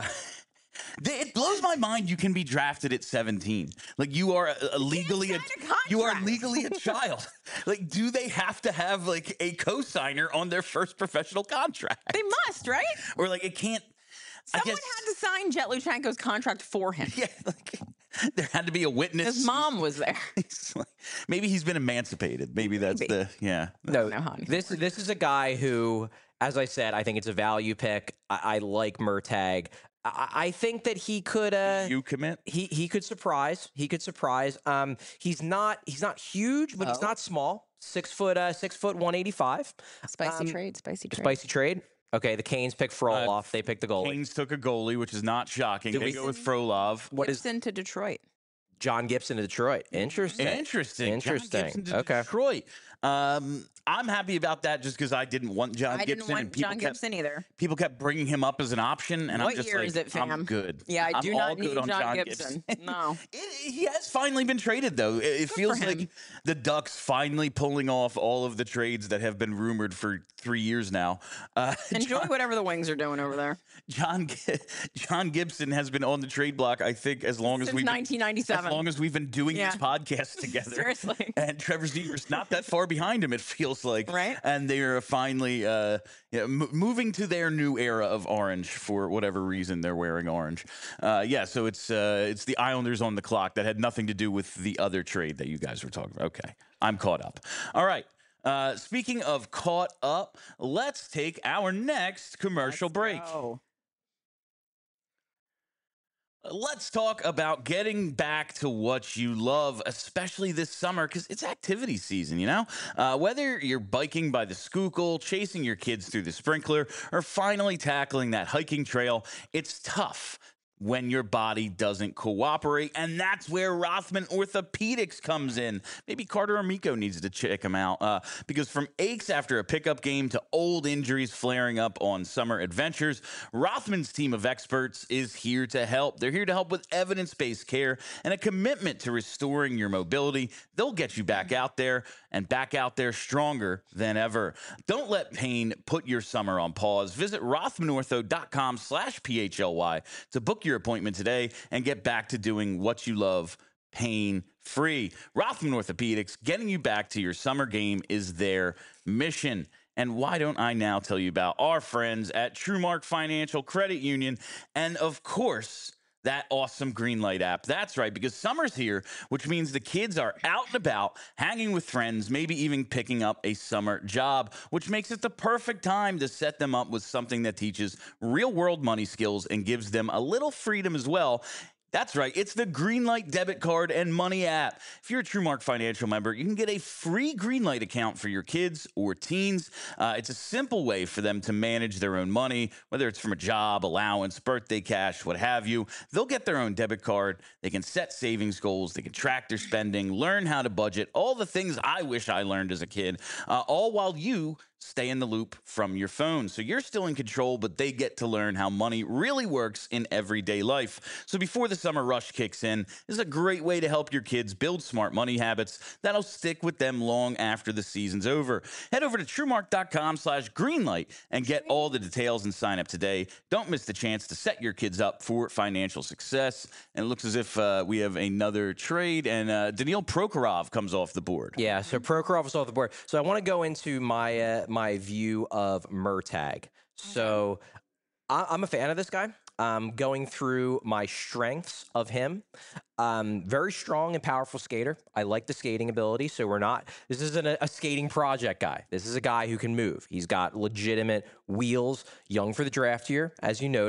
It blows my mind you can be drafted at seventeen. Like you are a, a legally a, a you are contract. legally a child. Like, do they have to have like a co-signer on their first professional contract? They must, right? Or like it can't I Someone guess, had to sign Jet Luchenko's contract for him. yeah, like there had to be a witness. His mom was there. He's like, maybe he's been emancipated. Maybe that's Maybe. the yeah. No, know how this this is a guy who, as I said, I think it's a value pick. I, I like Murtagh. I, I think that he could. Uh, You commit? he he could surprise. He could surprise. Um, he's not he's not huge, but he's Oh. not small. Six foot uh six foot one eighty five. Spicy Um, trade, spicy trade. Spicy trade. Okay, the Canes pick Frolov. they pick the goalie. Canes took a goalie, which is not shocking. Do They we- go with Frolov. What is Gibson to Detroit. John Gibson to Detroit? Interesting. Interesting. Interesting. John Gibson to Okay. Detroit. Um, I'm happy about that just because I didn't want John I Gibson. didn't want and people John kept, Gibson either. People kept bringing him up as an option, and What I'm just year like, is it, fam? I'm good. Yeah, I I'm do all not good need on John Gibson. No. It, he has finally been traded, though. It, it feels for him. like the Ducks finally pulling off all of the trades that have been rumored for three years now. Uh, Enjoy John, whatever the Wings are doing over there. John Gi- John Gibson has been on the trade block, I think, as long as Since we've nineteen as ninety-seven. long as we've been doing Yeah. this podcast together. Seriously. And Trevor Zeger's not that far behind him, it feels like. Right. And they are finally uh, yeah, m- moving to their new era of orange for whatever reason they're wearing orange. Uh, yeah, so it's uh, it's the Islanders on the clock. That had nothing to do with the other trade that you guys were talking about. Okay, I'm caught up. All right. Uh, speaking of caught up, let's take our next commercial break. Oh. Let's talk about getting back to what you love, especially this summer, because it's activity season, you know? Uh, whether you're biking by the Schuylkill, chasing your kids through the sprinkler, or finally tackling that hiking trail, it's tough when your body doesn't cooperate, and that's where Rothman Orthopedics comes in. Maybe Carter Amico needs to check him out, uh, because from aches after a pickup game to old injuries flaring up on summer adventures, Rothman's team of experts is here to help. They're here to help with evidence-based care and a commitment to restoring your mobility. They'll get you back out there and back out there stronger than ever. Don't let pain put your summer on pause. Visit rothmanortho.com slash PHLY to book your appointment today and get back to doing what you love pain-free. Rothman Orthopedics, getting you back to your summer game is their mission. And why don't I now tell you about our friends at TrueMark Financial Credit Union and, of course, that awesome Greenlight app. That's right, because summer's here, which means the kids are out and about, hanging with friends, maybe even picking up a summer job, which makes it the perfect time to set them up with something that teaches real-world money skills and gives them a little freedom as well. That's right. It's the Greenlight debit card and money app. If you're a TrueMark Financial member, you can get a free Greenlight account for your kids or teens. Uh, it's a simple way for them to manage their own money, whether it's from a job, allowance, birthday cash, what have you. They'll get their own debit card. They can set savings goals. They can track their spending, learn how to budget, all the things I wish I learned as a kid, uh, all while you stay in the loop from your phone. So you're still in control, but they get to learn how money really works in everyday life. So before the summer rush kicks in, this is a great way to help your kids build smart money habits that'll stick with them long after the season's over. Head over to TrueMark.com slash Greenlight and get all the details and sign up today. Don't miss the chance to set your kids up for financial success. And it looks as if uh, we have another trade, and uh, Daniil Prokhorov comes off the board. Yeah, so Prokhorov is off the board. So I want to go into my uh, my view of Murtagh. So I, I'm a fan of this guy. Um, going through my strengths of him, um, very strong and powerful skater. I like the skating ability. So we're not. This isn't a, a skating project guy. This is a guy who can move. He's got legitimate wheels. Young for the draft year, as you noted.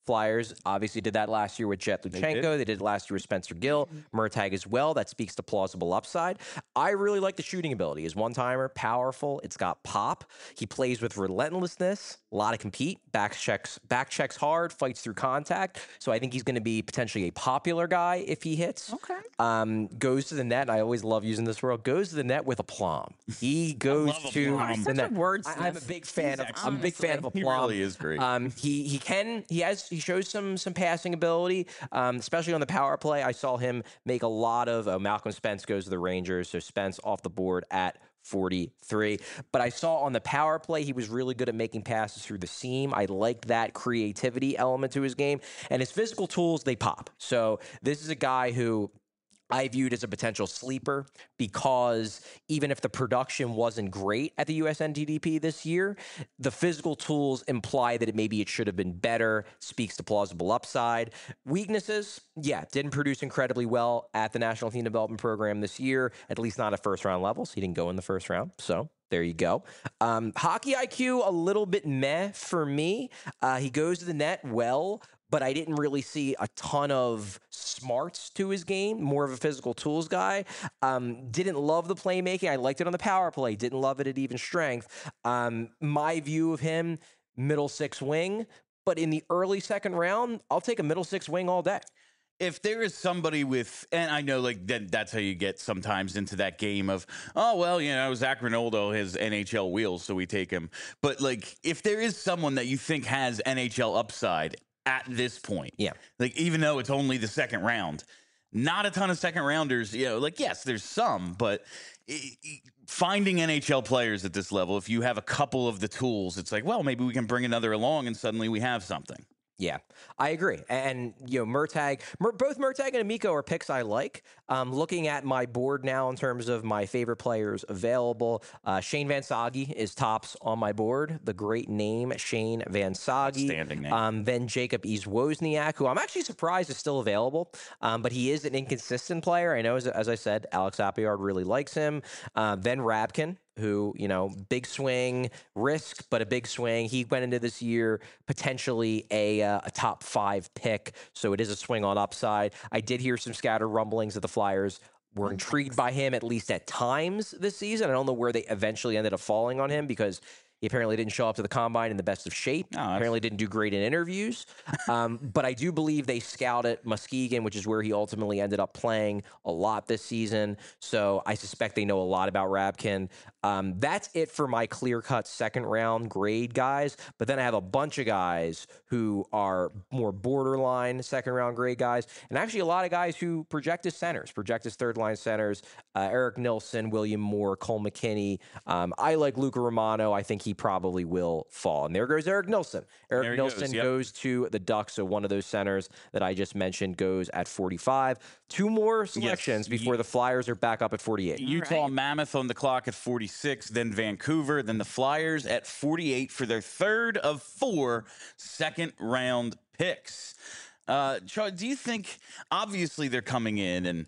Flyers obviously did that last year with Jet Luchenko. They did, they did it last year with Spencer Gill, Murtag as well. That speaks to plausible upside. I really like the shooting ability. He's one-timer, powerful. It's got pop. He plays with relentlessness, a lot of compete, back checks, back checks hard, fights through contact. So I think he's going to be potentially a popular guy if he hits. Okay. Um, goes to the net. I always love using this word. Goes to the net with aplomb. He goes to plum. the net. Wordsmith. I, I'm a big fan of. He's I'm a big fan of honestly- aplomb. He really is great. Um, he he can he has he shows some some passing ability, um, especially on the power play. I saw him make a lot of. Uh, Malcolm Spence goes to the Rangers, so Spence off the board at forty-three. But I saw on the power play he was really good at making passes through the seam. I liked that creativity element to his game, and his physical tools they pop. So this is a guy who I viewed as a potential sleeper because even if the production wasn't great at the U S N T D P this year, the physical tools imply that it maybe it should have been better, speaks to plausible upside. Weaknesses, yeah, didn't produce incredibly well at the National Team Development Program this year, at least not at first round levels. He didn't go in the first round, so there you go. Um, hockey I Q, a little bit meh for me. Uh, he goes to the net well, but I didn't really see a ton of smarts to his game, more of a physical tools guy. Um, didn't love the playmaking. I liked it on the power play. Didn't love it at even strength. Um, my view of him, middle six wing, but in the early second round, I'll take a middle six wing all day. If there is somebody with, and I know like that, that's how you get sometimes into that game of, oh, well, you know, Zach Rinaldo has N H L wheels, so we take him. But like, if there is someone that you think has N H L upside at this point, yeah, like even though it's only the second round, not a ton of second rounders, you know, like, yes, there's some, but it, it, finding N H L players at this level, if you have a couple of the tools, it's like, well, maybe we can bring another along and suddenly we have something. Yeah, I agree. And, you know, Murtag, Mur- both Murtag and Amico are picks I like. Um, looking at my board now in terms of my favorite players available, uh, Shane Van Sage is tops on my board. The great name, Shane Van Sage. Outstanding name. Um, then Jacob East Wozniak, who I'm actually surprised is still available, um, but he is an inconsistent player. I know, as, as I said, Alex Appyard really likes him. Uh, then Rabkin, who, you know, big swing, risk, but a big swing. He went into this year potentially a, uh, a top five pick, so it is a swing on upside. I did hear some scattered rumblings that the Flyers were intrigued by him, at least at times this season. I don't know where they eventually ended up falling on him because he apparently didn't show up to the combine in the best of shape. Oh, apparently didn't do great in interviews. Um, but I do believe they scouted Muskegon, which is where he ultimately ended up playing a lot this season. So I suspect they know a lot about Rabkin. Um, that's it for my clear-cut second-round grade guys. But then I have a bunch of guys who are more borderline second-round grade guys, and actually a lot of guys who project as centers, project as third-line centers. Uh, Eric Nilsson, William Moore, Cole McKinney. Um, I like Luca Romano. I think he probably will fall. And there goes Eric Nilsson. Eric There he Nilsson goes, yep. goes to the Ducks, so one of those centers that I just mentioned goes at forty-five. Two more selections Yes, before you- the Flyers are back up at forty-eight. Utah right. Mammoth on the clock at forty-six, then Vancouver, then the Flyers at forty-eight for their third of four second round picks. Uh, Charlie, do you think, obviously they're coming in and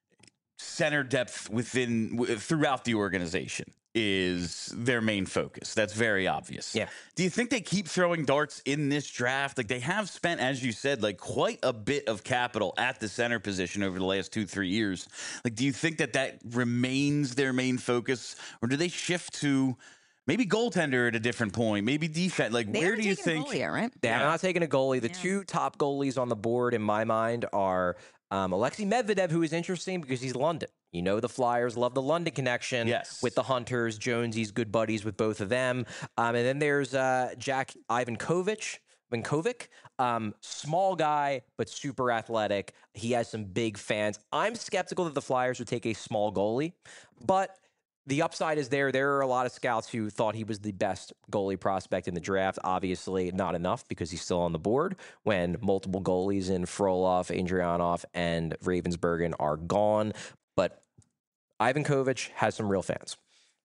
center depth within w- throughout the organization is their main focus. That's very obvious. Yeah. Do you think they keep throwing darts in this draft? Like they have spent, as you said, like quite a bit of capital at the center position over the last two, three years. Like, do you think that that remains their main focus, or do they shift to maybe goaltender at a different point, maybe defense? Like, They where haven't do you taken a think? goalie yet, right? They have Yeah. not taken a goalie. The Yeah. two top goalies on the board in my mind are um, Alexei Medvedev, who is interesting because he's London. You know, the Flyers love the London connection Yes. with the Hunters. Jonesy's good buddies with both of them. Um, and then there's uh, Jack Ivankovic. Vinkovic, um, small guy, but super athletic. He has some big fans. I'm skeptical that the Flyers would take a small goalie, but the upside is there. There are a lot of scouts who thought he was the best goalie prospect in the draft. Obviously, not enough because he's still on the board when multiple goalies in Frolov, Adrianov, and Ravensburgen are gone. But Ivankovic has some real fans.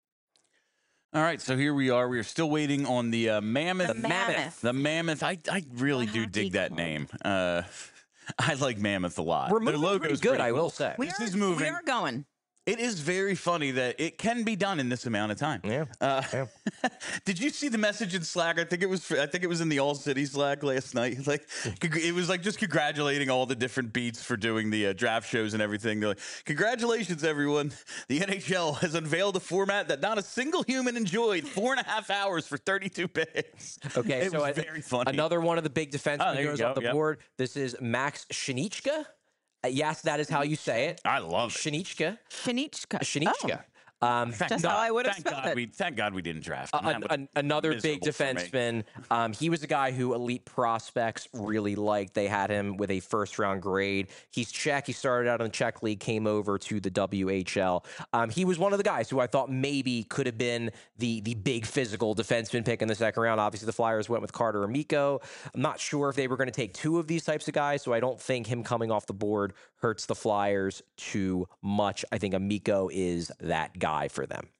All right, so here we are. We are still waiting on the uh, Mammoth. The Mammoth. The Mammoth. I, I really The do hockey dig that club. name. Uh, I like Mammoth a lot. We're Their moving logo's pretty good, pretty I will cool. say. We This are, is moving. We are going. It is very funny that it can be done in this amount of time. Yeah. Uh, yeah. Did you see the message in Slack? I think it was. I think it was in the All City Slack last night. Like, it was like just congratulating all the different beats for doing the uh, draft shows and everything. They're like, congratulations, everyone! The N H L has unveiled a format that not a single human enjoyed. Four and a half hours for thirty-two picks. Okay, it so was I, very funny. Another one of the big defensemen Oh, there you goes go, off the yep. board. This is Max Shinichka. Uh, yes, that is how you say it. I love it. Shinichka. Shanichka. Shinichka. Oh. Um, Thank Just God, how I would have thank spelled God it. We, thank God we didn't draft him. An, That was an, another big miserable for me. defenseman. Um, he was a guy who elite prospects really liked. They had him with a first round grade. He's Czech. He started out in the Czech league, came over to the W H L. Um, he was one of the guys who I thought maybe could have been the the big physical defenseman pick in the second round. Obviously, the Flyers went with Carter Amico. I'm not sure if they were going to take two of these types of guys, so I don't think him coming off the board hurts the Flyers too much. I think Amico is that guy for them.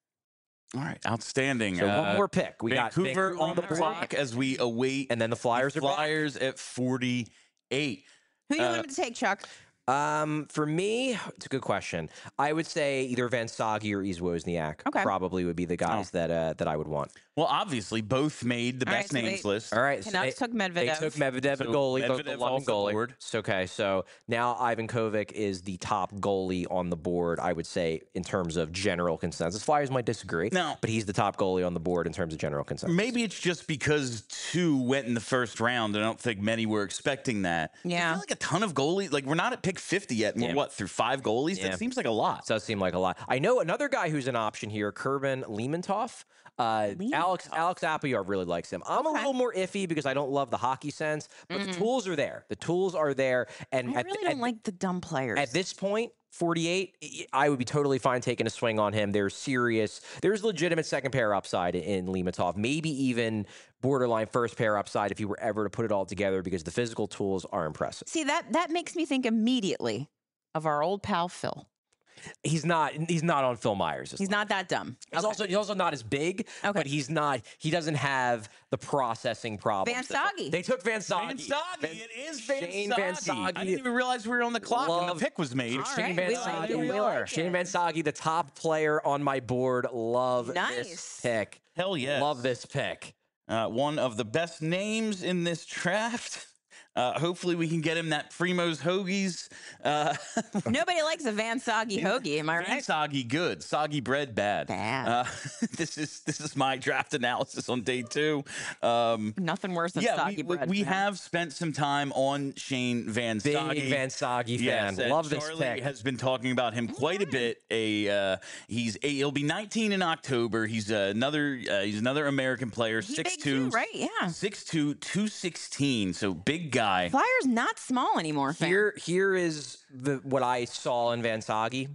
All right, outstanding. So uh, one more pick. We Vancouver got Vancouver on the board. clock as we await And then the Flyers the are back. Flyers at forty-eight. Who do you Uh, want him to take, Chuck? Um, for me, it's a good question. I would say either Van Sagi or Yves Wozniak Okay. probably would be the guys Oh. that uh, that I would want. Well, obviously, both made the All right, best so names they- list. All right, so Canucks they, took Medvedev. they took Medvedev, So the goalie, the, the Medvedev London off the goalie. board. So, okay, so now Ivan Kovic is the top goalie on the board. I would say in terms of general consensus. Flyers might disagree, No. but he's the top goalie on the board in terms of general consensus. Maybe it's just because two went in the first round. I don't think many were expecting that. Yeah. I feel like a ton of goalies. Like, we're not at pick fifty yet. And Yeah. we're, what, through five goalies? Yeah. That seems like a lot. Does seem like a lot. I know another guy who's an option here, Kervin Liementov. Uh, Alex Alex Appiar really likes him. I'm a Okay. little more iffy because I don't love the hockey sense, but the tools are there. The tools are there, and I at, really at- don't like the dumb players. at this point, forty-eight, I would be totally fine taking a swing on him. There's serious, there's legitimate second pair upside in Liementov, maybe even borderline first pair upside if you were ever to put it all together because the physical tools are impressive. See, that that makes me think immediately of our old pal Phil. He's not he's not on Phil Myers. He's not that dumb. He's Okay. also he's also not as big, Okay. but he's not he doesn't have the processing problems. Van that- Sagi. They took Van Sagi. Van Sagi. It is Van Shane Sagi. Van Sagi. I didn't even realize we were on the clock when Love- the pick was made. All Shane right, Van we like Sagi. it, we like Shane it. Van Sagi, the top player on my board. Love this Nice. pick. Hell yes. Love this pick. Uh, one of the best names in this draft. Uh, hopefully we can get him that Primo's Hoagies. Uh, Nobody likes a Van Sagi hoagie, am I Van right? Soggy good, soggy bread bad. Bad. Uh, this is this is my draft analysis on day two. Um, Nothing worse than yeah, soggy we, we, bread. we man. have spent some time on Shane Van Big Sagi. Van Sagi Yes, fan. and Love this Charlie pick. has been talking about him quite a bit. A uh, he's a, he'll be nineteen in October. He's uh, another uh, he's another American player. He six big two, too, right? Yeah. six two, two sixteen. So big guy. Flyers not small anymore, fam. Here, here is the what I saw in Van Sagi.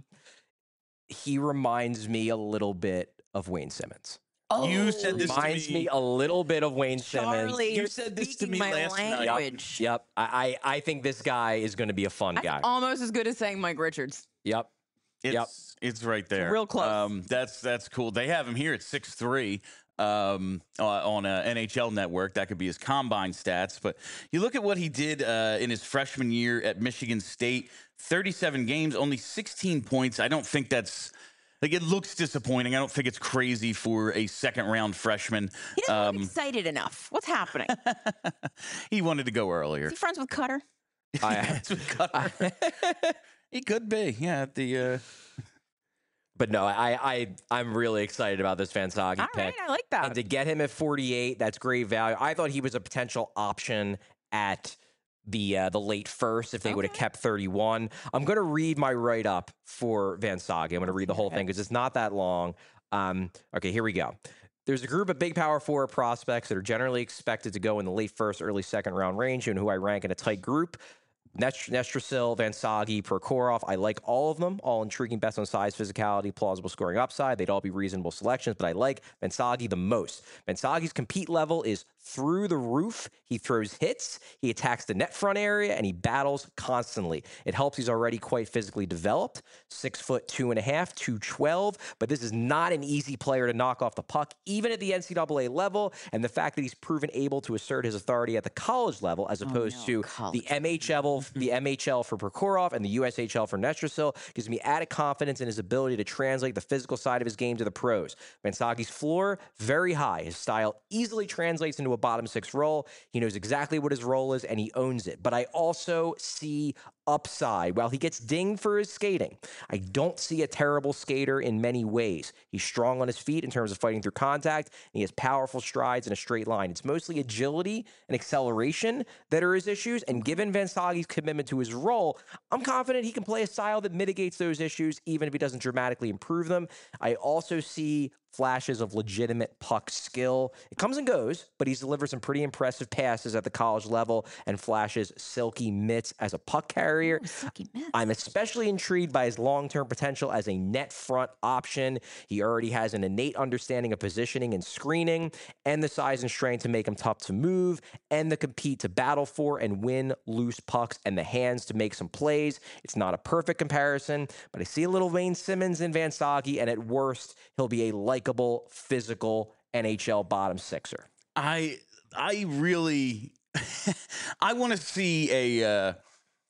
He reminds me a little bit of Wayne Simmons. You said this to Reminds me. me a little bit of Wayne Simmons. Charlie, You you're said this to speaking me my last night. language. Yep. I, I I think this guy is going to be a fun That's guy. almost as good as saying Mike Richards. Yep. It's, Yep. it's right there. real close. Um, that's that's cool. They have him here at six three um, uh, on a N H L network. That could be his combine stats. But you look at what he did uh, in his freshman year at Michigan State, thirty-seven games, only sixteen points. I don't think that's like it looks disappointing. I don't think it's crazy for a second round freshman. He doesn't Um, look excited enough. What's happening? Is he wanted to go earlier. he friends with Cutter? I, That's what Cutter- he could be. Yeah, at the. Uh, but no, I I I'm really excited about this Van Sagi All pick. right, I like that. And to get him at forty-eight, that's great value. I thought he was a potential option at the uh, the late first if they would have Okay. kept thirty-one. I'm going to read my write up for Van Sagi. I'm going to read the whole thing because it's not that long. Um, okay, here we go. There's a group of big power forward prospects that are generally expected to go in the late first, early second round range, and who I rank in a tight group. Nest- Nestrasil, Van Sagi, Prokhorov. I like all of them. All intriguing, best on size, physicality, plausible scoring upside. They'd all be reasonable selections, but I like Van Sagi the most. Van Sagi's compete level is through the roof. He throws hits, he attacks the net front area, and he battles constantly. It helps he's already quite physically developed, six foot two and a half, two twelve, but this is not an easy player to knock off the puck, even at the N C double A level, and the fact that he's proven able to assert his authority at the college level as opposed oh, no, to college. the M H L, the M H L for Prokhorov and the U S H L for Nestrasil gives me added confidence in his ability to translate the physical side of his game to the pros. Vansagi's floor, very high. His style easily translates into a bottom six role. He knows exactly what his role is, and he owns it. But I also see upside. While he gets dinged for his skating, I don't see a terrible skater in many ways. He's strong on his feet in terms of fighting through contact, and he has powerful strides in a straight line. It's mostly agility and acceleration that are his issues, and given Vansagi's commitment to his role, I'm confident he can play a style that mitigates those issues, even if he doesn't dramatically improve them. I also see flashes of legitimate puck skill. It comes and goes, but he's delivered some pretty impressive passes at the college level and flashes silky mitts as a puck carrier. Ooh, silky mitts. I'm especially intrigued by his long-term potential as a net front option. He already has an innate understanding of positioning and screening, and the size and strength to make him tough to move, and the compete to battle for and win loose pucks, and the hands to make some plays. It's not a perfect comparison, but I see a little Wayne Simmons in Vansagi, and at worst, he'll be a likable, physical N H L bottom sixer. I I really I want to see a uh,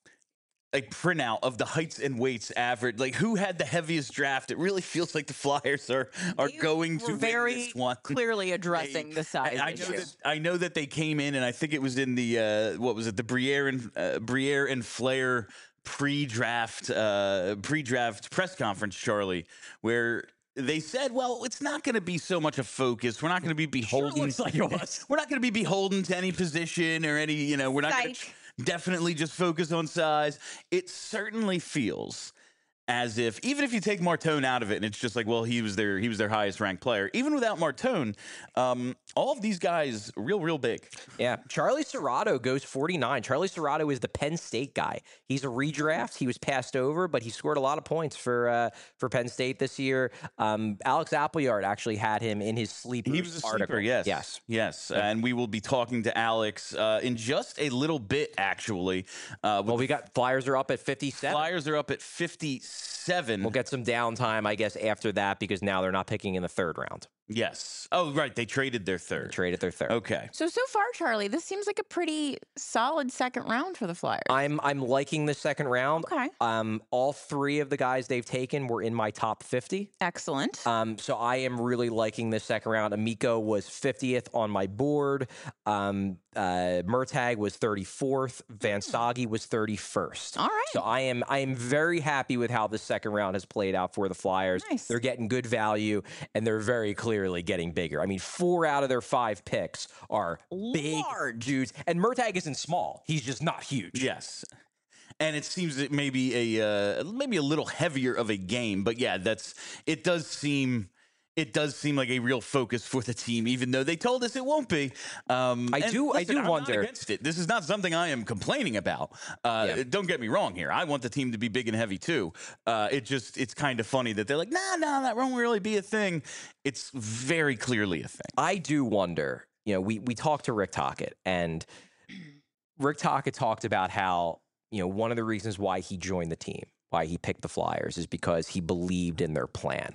a printout of the heights and weights average. Like, who had the heaviest draft? It really feels like the Flyers are are They going were to very win this one. clearly addressing They- the size I, I know issue. that I know that they came in, and I think it was in the uh, what was it, the Briere and uh, Briere and Flair pre-draft uh, pre-draft press conference, Charlie, where they said, well, it's not going to be so much a focus. We're not going to be beholden. looks like it was. We're not going to be beholden to any position or any, you know, we're not going to Psych. definitely just focus on size. It certainly feels as if, even if you take Martone out of it, and it's just like, well, he was their he was their highest ranked player. Even without Martone, um, all of these guys real real big. Yeah, Charlie Serrato goes forty-nine. Charlie Serrato is the Penn State guy. He's a redraft. He was passed over, but he scored a lot of points for uh, for Penn State this year. Um, Alex Appleyard actually had him in his sleeper. He was a article. sleeper, yes, yes, yes. And we will be talking to Alex uh, in just a little bit, actually. Uh, Well, we got Flyers are up at fifty-seven. Flyers are up at fifty-seven. We'll get some downtime, I guess, after that because now they're not picking in the third round. Yes. Oh, right. They traded their They third. traded their third. Okay. So, so far, Charlie, this seems like a pretty solid second round for the Flyers. I'm I'm liking the second round. Okay. Um, all three of the guys they've taken were in my top fifty. Excellent. Um, so I am really liking this second round. Amico was fiftieth on my board. Um, uh, Murtag was thirty-fourth. Vansagi was thirty-first. All right. So I am I am very happy with how the second round has played out for the Flyers. Nice. They're getting good value, and they're very clearly getting bigger. I mean, four out of their five picks are big Large. dudes, and Murtag isn't small. He's just not huge. Yes. And it seems that maybe a uh, maybe a little heavier of a game, but yeah, that's it. Does seem it does seem like a real focus for the team, even though they told us it won't be. Um, I and do- I listen, do I'm not wonder- against it. This is not something I am complaining about. Uh, Yeah. Don't get me wrong here. I want the team to be big and heavy too. Uh, it just it's kind of funny that they're like, nah, nah, that won't really be a thing. It's very clearly a thing. I do wonder, you know, we, we talked to Rick Tocchet, and Rick Tocchet talked about how, you know, one of the reasons why he joined the team, why he picked the Flyers, is because he believed in their plan.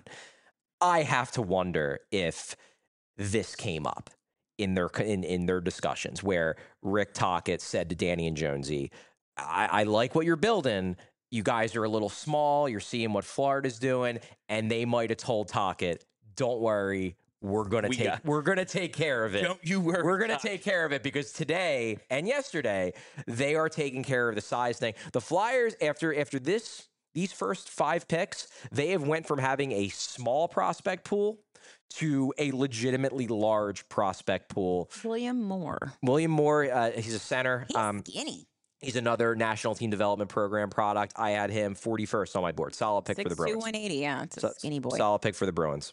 I have to wonder if this came up in their in, in their discussions where Rick Tocchet said to Danny and Jonesy, I, I like what you're building. You guys are a little small. You're seeing what Florida's doing. And they might have told Tocchet, don't worry, we're gonna We take got- we're gonna take care of it. Don't you worry. We're gonna take care of it because today and yesterday they are taking care of the size thing. The Flyers, after after this these first five picks, they have went from having a small prospect pool to a legitimately large prospect pool. William Moore. William Moore, uh, he's a center. He's Um, skinny. he's another National Team Development Program product. I had him forty-first on my board. Solid pick for the six two, Bruins. one eighty. Yeah, it's a So- skinny boy. Solid pick for the Bruins.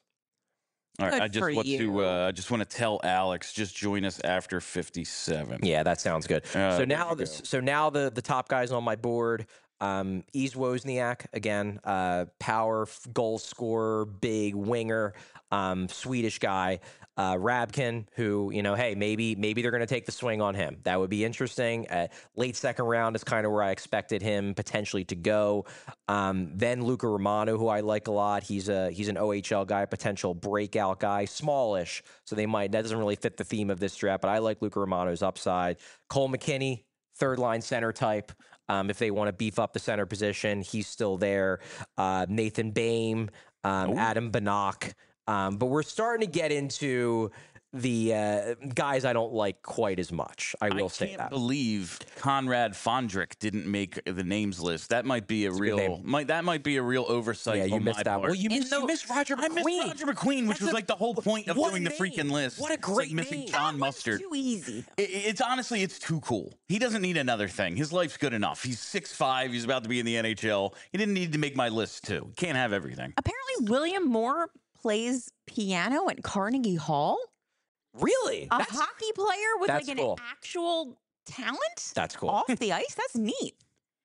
All right, Good I just for want you. to uh, I just want to tell Alex, just join us after fifty-seven. Yeah, that sounds good. Uh, so there now, you the, go. so now the the top guys on my board. Um, Yves Wozniak, again, uh, power, f- goal scorer, big winger, um, Swedish guy. Uh, Rabkin, who, you know, hey, maybe maybe they're going to take the swing on him. That would be interesting. Uh, late second round is kind of where I expected him potentially to go. Um, then Luca Romano, who I like a lot. He's a he's an O H L guy, potential breakout guy, smallish. So they might that doesn't really fit the theme of this draft, but I like Luca Romano's upside. Cole McKinney, third line center type. Um, if they want to beef up the center position, he's still there. Uh, Nathan Bain, um, Adam Bannock. Um, but we're starting to get into the uh, guys I don't like quite as much. I will I say can't that. believe Conrad Fondrick didn't make the names list. That might be a It's a good real name. might that might be a real oversight. Yeah, you on missed my that. part. Well, you In missed, the- you missed Roger I McQueen. missed Roger McQueen, which That's was a- like the whole point of what a doing the name. freaking list. What a It's like great missing name. John That was Mustard. too easy. It- It's honestly, it's too cool. He doesn't need another thing. His life's good enough. He's six five. He's about to be in the N H L. He didn't need to make my list too. Can't have everything. Apparently, William Moore plays piano at Carnegie Hall. Really? A That's, hockey player with that's like cool. an actual talent that's cool. off the ice. That's neat.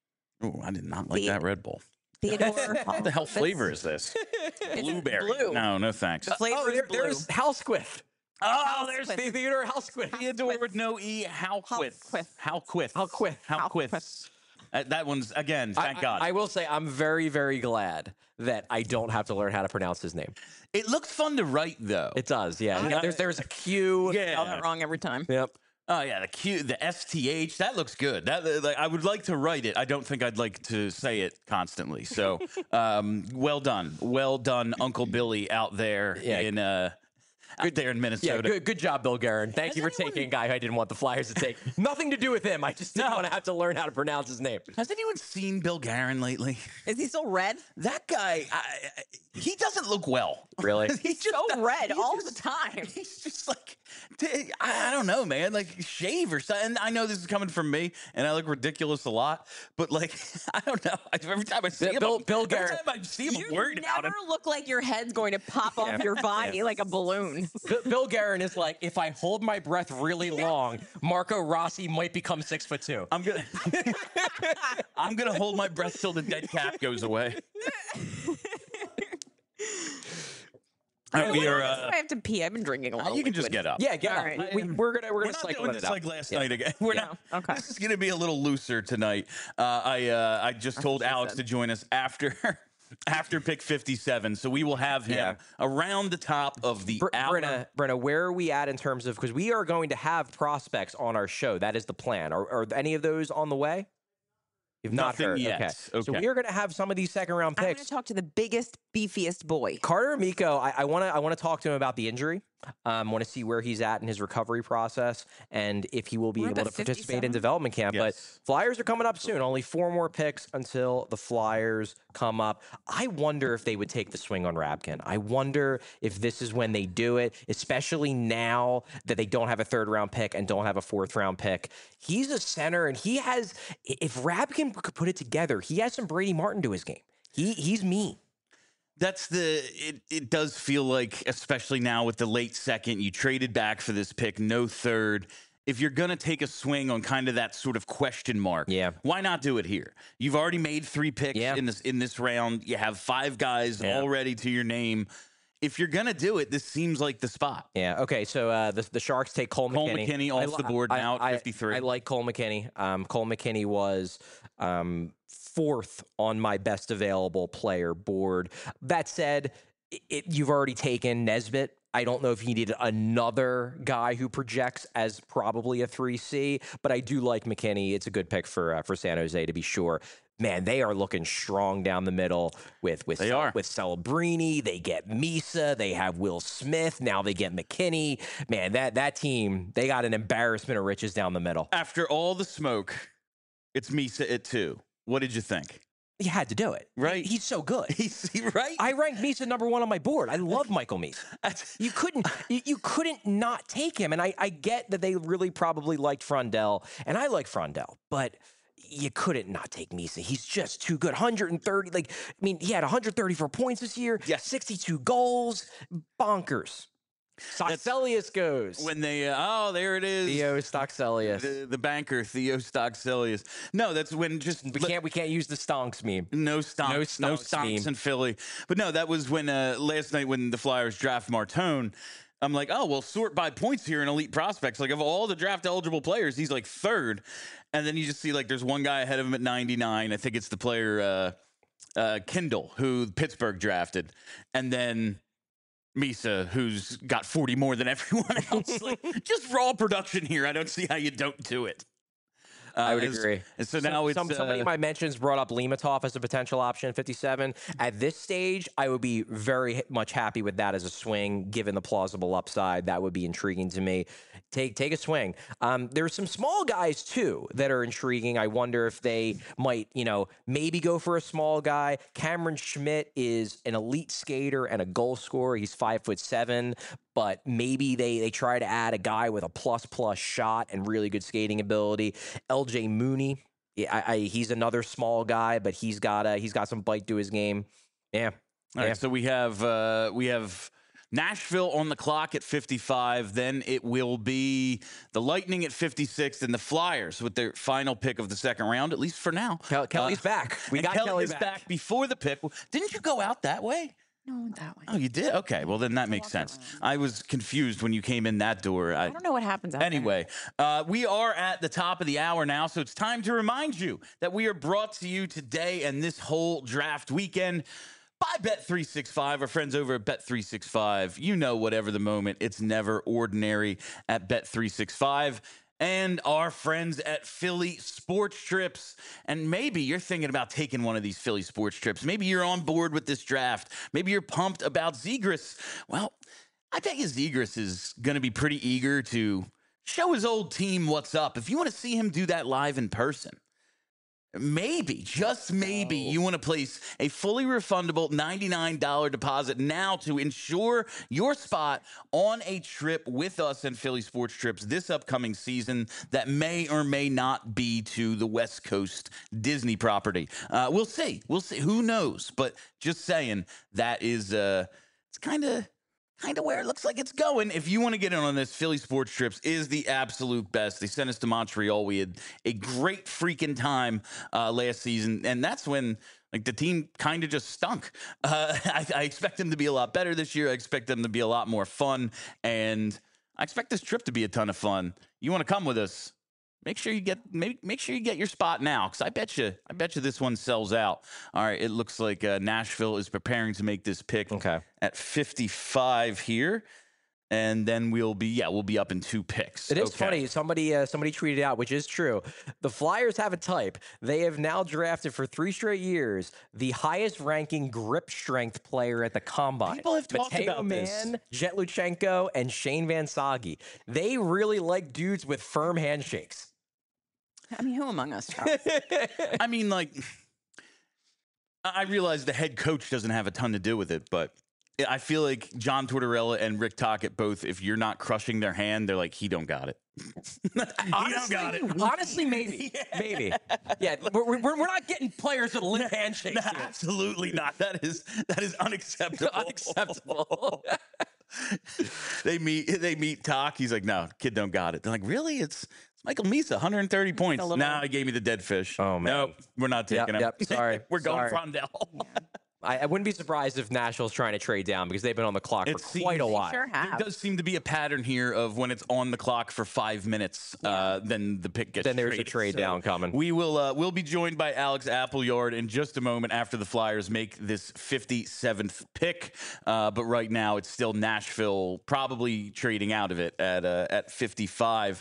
Oh, I did not like The- that Red Bull. Theodore. What the hell flavor is this? Blueberry. blue. No, no thanks. The flavor oh, is there, blue. there's Halsquith. Oh, there's Halsquith. The Theodore Halsquith. Theodore with no E. Halquith. Halquith. Halquith. Halquith. Halquith. Halquith. Uh, that one's, again, thank I, God. I, I will say I'm very, very glad that I don't have to learn how to pronounce his name. it looks fun to write, though. It does, yeah. Uh, there's there's a Q. yeah. Got that wrong every time. Yep. Oh yeah, the Q, the S T H, that looks good. That uh, like, I would like to write it. I don't think I'd like to say it constantly. So, um, well done, well done, Uncle Billy out there Yeah. in uh, out there in Yeah, Minnesota. good, good job, Bill Guerin. Thank Has you for anyone- taking a guy who I didn't want the Flyers to take. Nothing to do with him. I just didn't No. want to have to learn how to pronounce his name. Has anyone seen Bill Guerin lately? Is he still red? That guy, I, I- he doesn't look well. Really? He's just So red he's all just- the time. He's just like, t- I I don't know, man. Like shave or something. And I know this is coming from me, and I look ridiculous a lot. But like, I don't know. I- Every time I see him, Bill- I'm- Bill every Guerin- time I see him, I'm You worried about never him. look like your head's going to pop off your body like a balloon. B- Bill Guerin is like, if I hold my breath really long, Marco Rossi might become six foot two. I'm gonna, I'm gonna hold my breath till the dead cat goes away. All right, we are. Uh, I have to pee. I've been drinking a lot. you of can just liquid. get up. Yeah, get All up. right. We, we're gonna we're We're gonna not cycle doing it this out. like last Yeah. night again. We're Yeah, not. okay. This is going to be a little looser tonight. Uh, I uh, I just told what she Alex said. to join us after after pick fifty-seven, so we will have him Yeah. around the top of the Br- hour. Brenna, Brenna, where are we at in terms of because we are going to have prospects on our show? That is the plan. Are, are any of those on the way? You've not Nothing heard. yet. Okay. So Okay. we are going to have some of these second round I'm going picks. to talk to the biggest, beefiest boy. Carter Amico, I want to I want to talk to him about the injury. I um, want to see where he's at in his recovery process and if he will be We're able up to at participate in fifty-seven? development camp. Yes. But Flyers are coming up soon. Only four more picks until the Flyers come up. I wonder if they would take the swing on Rabkin. I wonder if this is when they do it, especially now that they don't have a third round pick and don't have a fourth round pick. He's a center, and he has. If Rabkin could put it together, he has some Brady Martin to his game. He he's mean. That's the. It, it does feel like, especially now with the late second, you traded back for this pick, no third. If you're going to take a swing on kind of that sort of question mark, Yeah. why not do it here? You've already made three picks Yeah. in this in this round. You have five guys Yeah. already to your name. If you're going to do it, this seems like the spot. Yeah. Okay. So uh, the the Sharks take Cole, Cole McKinney. McKinney off I li- the board I- now at I- fifty-three. I like Cole McKinney. Um, Cole McKinney was um, fourth on my best available player board. That said, it, it, you've already taken Nesbitt. I don't know if you needed another guy who projects as probably a three C, but I do like McKinney. It's a good pick for uh, for San Jose to be sure. Man, they are looking strong down the middle with with They Cel- are. with Celebrini. They get Misa. They have Will Smith. Now they get McKinney. Man, that that team, they got an embarrassment of riches down the middle. After all the smoke, it's Misa at two. What did you think? You had to do it, Right. He's so good. He's he- right. I ranked Misa number one on my board. I love Michael Misa. That's- You couldn't, you, you couldn't not take him. And I, I get that they really probably liked Frondell, and I like Frondell, but you couldn't not take Misa. He's just too good. one hundred thirty, like, I mean, he had one hundred thirty-four points this year. Yes. sixty-two goals. Bonkers. Stockselius goes. When they, uh, oh, there it is. Theo Stockselius. The, the banker, Theo Stockselius. No, that's when just... We can't we can't use the stonks meme. No stonks. No No stonks stonks, meme. in Philly. But no, that was when uh, last night when the Flyers draft Martone, I'm like, oh, well, sort by points here in elite prospects. Like, of all the draft eligible players, he's like third. And then you just see, like, there's one guy ahead of him at ninety-nine. I think it's the player uh, uh, Kindle, who Pittsburgh drafted. And then Misa, who's got forty more than everyone else. Like, just raw production here. I don't see how you don't do it. Uh, I would and, agree. And so Some- now it's some, somebody uh, in my mentions brought up Limatov as a potential option, fifty-seven. At this stage, I would be very much happy with that as a swing, given the plausible upside. That would be intriguing to me. Take take a swing. Um, there's some small guys too that are intriguing. I wonder if they might, you know, maybe go for a small guy. Cameron Schmidt is an elite skater and a goal scorer. He's five foot seven. But maybe they they try to add a guy with a plus plus shot and really good skating ability. L J Mooney, I, I, he's another small guy, but he's got a, he's got some bite to his game. Yeah. All yeah. right, so we have uh, we have Nashville on the clock at fifty-five. Then it will be the Lightning at fifty-six, and the Flyers with their final pick of the second round, at least for now. Kel- Kelly's Uh, back. We and got Kelly Kelly is back. back before the pick. Didn't you go out that way? No, that way. Oh, you did? Okay, well then that makes walk sense. around. I was confused when you came in that door. I, I don't know what happens out Anyway, uh, we are at the top of the hour now, so it's time to remind you that we are brought to you today and this whole draft weekend by Bet three sixty-five, our friends over at Bet three sixty-five. You know, whatever the moment, it's never ordinary at Bet three sixty-five. And our friends at Philly Sports Trips. And maybe you're thinking about taking one of these Philly Sports Trips. Maybe you're on board with this draft. Maybe you're pumped about Zegras. Well, I bet you Zegras is going to be pretty eager to show his old team what's up. If you want to see him do that live in person, maybe, just maybe, you want to place a fully refundable ninety-nine dollars deposit now to ensure your spot on a trip with us and Philly Sports Trips this upcoming season that may or may not be to the West Coast Disney property. Uh, we'll see. We'll see. Who knows? But just saying, that is, uh, it's kind of... Kind of where it looks like it's going. If you want to get in on this, Philly Sports Trips is the absolute best. They sent us to Montreal. We had a great freaking time uh, last season, and that's when like the team kind of just stunk. Uh, I, I expect them to be a lot better this year. I expect them to be a lot more fun, and I expect this trip to be a ton of fun. You want to come with us? Make sure you get make, make sure you get your spot now, because I bet you I bet you this one sells out. All right, it looks like uh, Nashville is preparing to make this pick Okay. at fifty-five here, and then we'll be yeah we'll be up in two picks. It is Okay. funny. Somebody uh, somebody tweeted out, which is true. The Flyers have a type. They have now drafted for three straight years the highest ranking grip strength player at the combine. People have talked Mateo about this. Mann, Jet Luchenko, and Shane Van Sagi. They really like dudes with firm handshakes. I mean, who among us, Charles? I mean, like, I I realize the head coach doesn't have a ton to do with it, but I feel like John Tortorella and Rick Tocchet both, if you're not crushing their hand, they're like, he don't got it. he don't got it. Honestly, maybe. Maybe. Yeah, we're, we're, we're not getting players with limp handshakes. No, here. absolutely not. That is that is unacceptable. Unacceptable. they meet they meet Talk. He's like, no, kid don't got it. They're like, really? It's it's Michael Misa, one hundred thirty points. little- Nah, he gave me the dead fish. Oh, man. Nope, we're not Yep, taking him. yep, sorry, we're going sorry. Frondell. I, I wouldn't be surprised if Nashville's trying to trade down because they've been on the clock It for quite a seems- while. Sure There have. does seem to be a pattern here of when it's on the clock for five minutes, uh, then the pick gets Then there's a traded. trade So down coming. We will uh, we'll be joined by Alex Appleyard in just a moment after the Flyers make this fifty-seventh pick. Uh, but right now it's still Nashville probably trading out of it at uh, at fifty-five.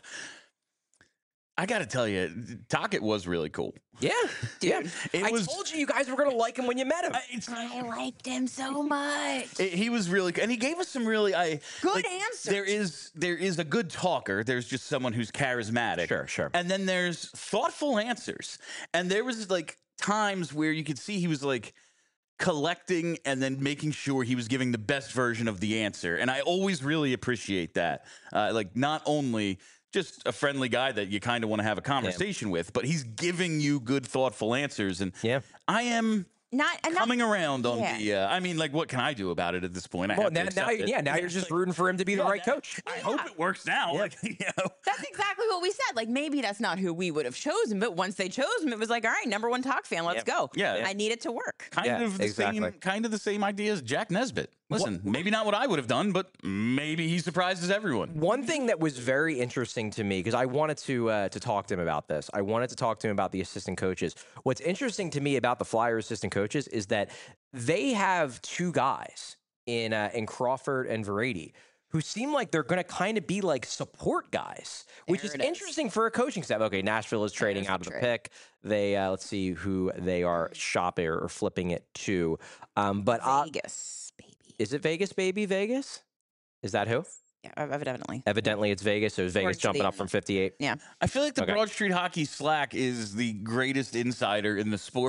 I got to tell you, Tocchet was really cool. Yeah, yeah. It I was- told you you guys were going to like him when you met him. I- it's- I liked him so much. It- he was really good, and he gave us some really I Good like, answers. There is there is a good talker. There's just someone who's charismatic. Sure, sure. And then there's thoughtful answers. And there was like times where you could see he was like collecting and then making sure he was giving the best version of the answer. And I always really appreciate that. Uh, like not only just a friendly guy that you kind of want to have a conversation with, but he's giving you good, thoughtful answers. And Yeah. I am not, not coming around on yeah. the. Uh, I mean, like, what can I do about it at this point? I well, have now, to now, accept it. yeah, now you're just rooting for him to be the Yeah, right that- coach. I Yeah. hope it works now. Yeah. Like, you know. That's exactly what we said. Like, maybe that's not who we would have chosen, but once they chose him, it was like, all right, number one talk fan, let's Yeah. go. Yeah. I need it to work. Kind Yeah, of the exactly. same, kind of the same idea as Jack Nesbitt. Listen, maybe not what I would have done, but maybe he surprises everyone. One thing that was very interesting to me, because I wanted to uh, to talk to him about this. I wanted to talk to him about the assistant coaches. What's interesting to me about the Flyers assistant coaches is that they have two guys in uh, in Crawford and Verratti who seem like they're going to kind of be like support guys, which There is it is. interesting for a coaching staff. Okay, Nashville is trading There's out the of the trade. pick. They uh, let's see who they are shopping or flipping it to. Um, but uh, Vegas, baby. is it Vegas, baby? Vegas? Is that who? Yeah, evidently. Evidently, it's Vegas. So is Vegas Towards jumping the up from end. fifty-eight? Yeah. I feel like the Okay. Broad Street Hockey Slack is the greatest insider in the sport.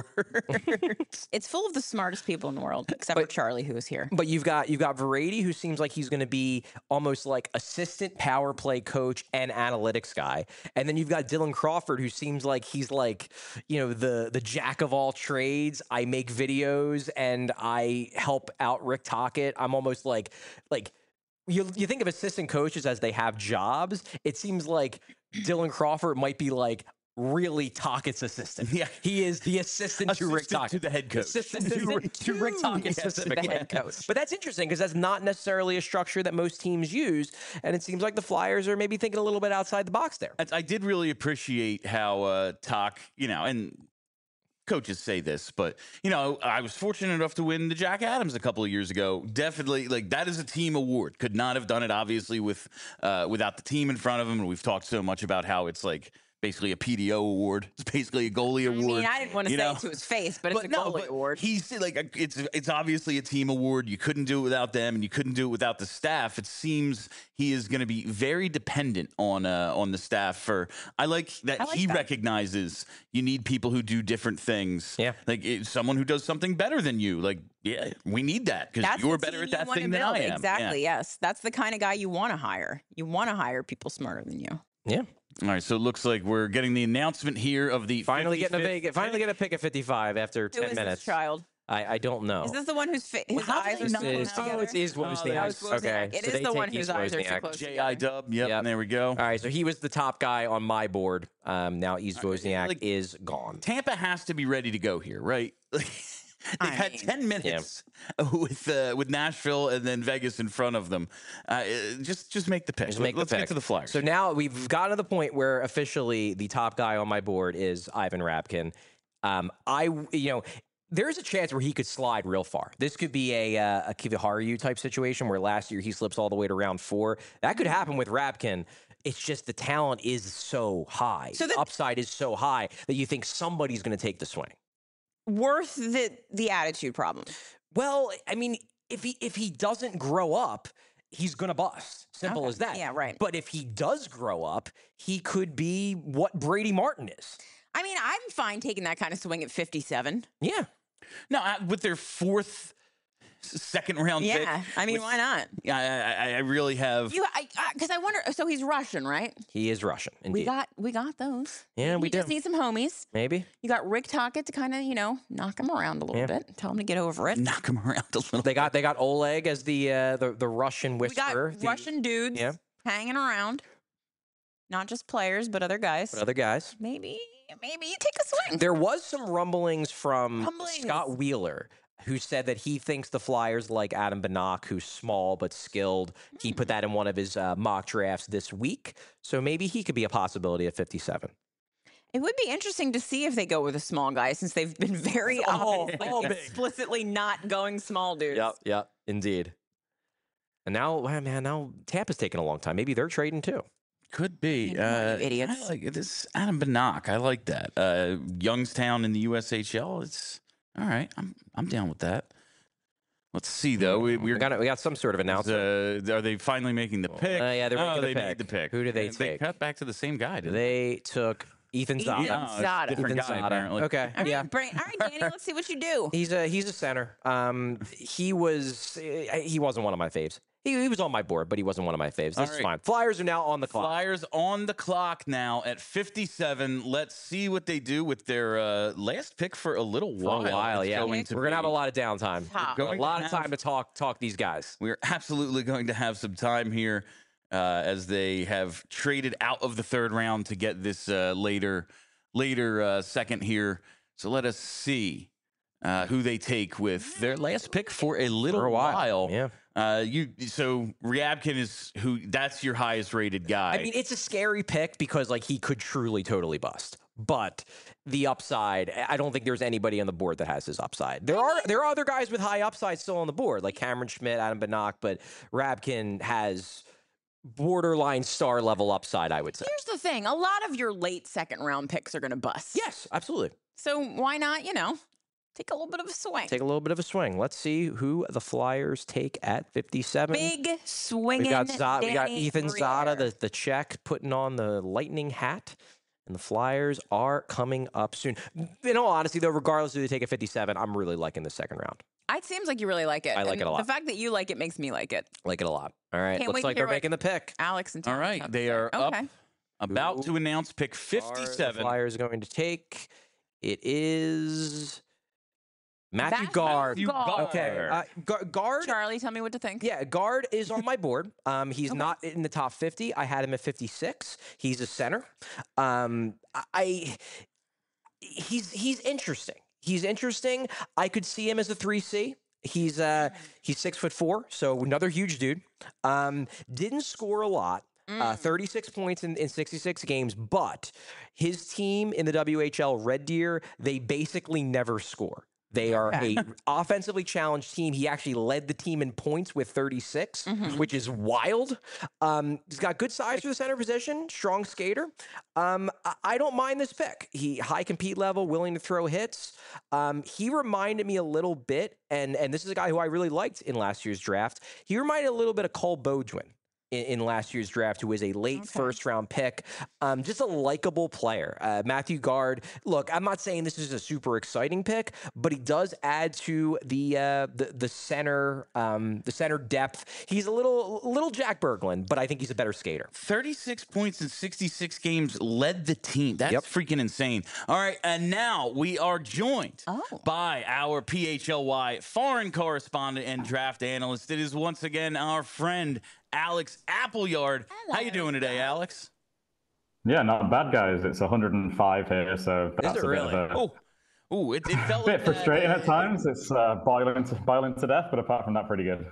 It's full of the smartest people in the world, except for Charlie, who is here. But you've got you've got Verratti, who seems like he's going to be almost like assistant power play coach and analytics guy, and then you've got Dylan Crawford, who seems like he's like you know the the jack of all trades. I make videos and I help out Rick Tocchet. I'm almost like like. You, you think of assistant coaches as they have jobs. It seems like Dylan Crawford might be like really Tockett's assistant. Yeah. He is the assistant, to Rick Assistant Tocchet. to the head coach. Assistant to, Rick- to Rick Tocchet Yes, the specifically. head coach. But that's interesting because that's not necessarily a structure that most teams use. And it seems like the Flyers are maybe thinking a little bit outside the box there. I I did really appreciate how uh, Talk, you know, and coaches say this, but you know, I was fortunate enough to win the Jack Adams a couple of years ago. Definitely, like that is a team award. Could not have done it, obviously, with uh, without the team in front of him. And we've talked so much about how it's like basically a P D O award. It's basically a goalie I award. mean, I didn't want to you say know? it to his face, but it's a goalie but award. He's like, it's it's obviously a team award. You couldn't do it without them, and you couldn't do it without the staff. It seems he is going to be very dependent on uh, on the staff. For I like that I like he that. recognizes you need people who do different things. Yeah. like it's someone who does something better than you. Like, yeah, we need that because That's you're the better team at you that wanna thing than build. I am. Exactly. Yeah. Yes, that's the kind of guy you want to hire. You want to hire people smarter than you. Yeah. All right, so it looks like we're getting the announcement here of the Finally getting a fifty-fifth big, finally get a pick at fifty-five after Who ten is minutes. this child? I, I don't know. Is this the one whose fa- his how do eyes they are not so Is- close oh, together? it's Is Oh, Wozniak. That was Wozniak. Okay, It so is they the take one whose East eyes are so Wozniak. close J I together. Dub. Yep, Yep. and there we go. All right, so he was the top guy on my board. Um, now East Wozniak like- is gone. Tampa has to be ready to go here, right? They've I had mean- ten minutes with uh, with Nashville and then Vegas in front of them. Uh, just just make the pick. Just make the Let's pick. get to the Flyers. So now we've gotten to the point where officially the top guy on my board is Ivan Rabkin. Um, I, you know, there's a chance where he could slide real far. This could be a uh, a Kiviharu type situation where last year he slips all the way to round four. That could happen with Rabkin. It's just the talent is so high. So the the- upside is so high that you think somebody's going to take the swing. Worth the the attitude problem. Well, I mean, if he if he doesn't grow up, he's gonna bust. Simple Okay. as that. Yeah, right. But if he does grow up, he could be what Brady Martin is. I mean, I'm fine taking that kind of swing at fifty-seven. Yeah. no, uh, with their fourth, s- second round pick. Yeah, I mean, with- why not? Yeah, I, I, I really have. You, I, because I wonder. So he's Russian, right? He is Russian. Indeed. We got, we got those. Yeah, we we just do. need some homies. Maybe. You got Rick Tocchet to kind of, you know, knock him around a little Yeah. bit. Tell him to get over it. knock him around a little. They got they got Oleg as the uh, the the Russian We got whisperer. the- Russian dudes Yeah. hanging around, not just players, but other guys. but other guys. Maybe, maybe you take a swing. There was some rumblings from Rumblings. Scott Wheeler, who said that he thinks the Flyers like Adam Banach, who's small but skilled. He put that in one of his uh, mock drafts this week. So maybe he could be a possibility at fifty-seven. It would be interesting to see if they go with a small guy, since they've been very All- obviously all big. explicitly not going small dudes. Yep, yep, indeed. And now, wow, man, now Tampa's taking a long time. Maybe they're trading too. Could be. You know, Uh, you idiots. I like this Adam Banach. I like that. Uh, Youngstown in the U S H L. It's all right. I'm I'm down with that. Let's see though. We, We we're got we got some sort of announcement. Uh, are they finally making the pick? Uh, yeah, they're oh, making the they pick. made the pick. Who did they Uh, take? They cut back to the same guy. Didn't They took Ethan Ethan Zada. Yeah, it's a Zada. different Ethan guy, Zada. apparently. Okay, All right, yeah. Brain, all right, Danny, let's see what you do. He's a he's a center. Um, he was eh, he wasn't one of my faves. He, he was on my board, but he wasn't one of my faves. This All is right. fine. Flyers are now on the clock. Flyers on the clock now at fifty-seven. Let's see what they do with their uh, last pick for a little For while. a while, It's yeah. going to We're gonna have be. a lot of downtime. Top. A Going lot to of have- time to talk talk these guys. We're absolutely going to have some time here uh, as they have traded out of the third round to get this uh, later later uh, second here. So let us see uh, who they take with their last pick for a little For a while, while. yeah. Uh, you so Ryabkin is who? That's your highest rated guy. I mean, it's a scary pick because like he could truly totally bust. But the upside, I don't think there's anybody on the board that has his upside. There are there are other guys with high upside still on the board, like Cameron Schmidt, Adam Banach, but Rabkin has borderline star level upside, I would say. Here's the thing. A lot of your late second round picks are going to bust. Yes, absolutely. So why not, you know, take a little bit of a swing. Take a little bit of a swing. Let's see who the Flyers take at fifty-seven. Big swinging. We got Zada, we got Danny Ethan Briere. Zada, the, the Czech, putting on the lightning hat. And the Flyers are coming up soon. In all honesty, though, regardless of who they take at fifty-seven, I'm really liking the second round. It seems like you really like it. I like and it a lot. The fact that you like it makes me like it. Like it a lot. All right. Can't wait Looks to like hear they're what- making the pick. Alex and All Tom right, have to they say. are up, Okay. about to Who announce pick Are the fifty-seven. Flyers are going to take. It is Matthew Matthew Guard. Guard. Okay. Uh, Gu- Guard. Charlie, tell me what to think. Yeah, Guard is on my board. Um, he's Okay. not in the top fifty. I had him at fifty-six. He's a center. Um, I he's he's interesting. He's interesting. I could see him as a three C. He's uh he's six foot four, so another huge dude. Um, didn't score a lot. Uh, thirty-six points in, in sixty-six games, but his team in the W H L Red Deer, they basically never score. They are a offensively challenged team. He actually led the team in points with thirty-six, which is wild. Um, he's got good size for the center position, strong skater. Um, I, I don't mind this pick. He high compete level, willing to throw hits. Um, he reminded me a little bit, and and this is a guy who I really liked in last year's draft. He reminded a little bit of Cole Beaudouin. In, in last year's draft, who was a late Okay. first round pick, um, just a likable player. Uh, Matthew Guard. Look, I'm not saying this is a super exciting pick, but he does add to the uh, the the center um, the center depth. He's a little little Jack Berglund, but I think he's a better skater. thirty-six points in sixty-six games, led the team. That's Yep. freaking insane. All right, and now we are joined Oh. by our P H L Y foreign correspondent and draft analyst. It is once again our friend Alex Appleyard. How you Hello. doing today, Alex? Yeah, not bad, guys. It's one hundred five here, so that's it a bit really? of a Oh, oh, it, it felt bit like that, frustrating uh, at times. It's uh, boiling to boiling to death, but apart from that, pretty good.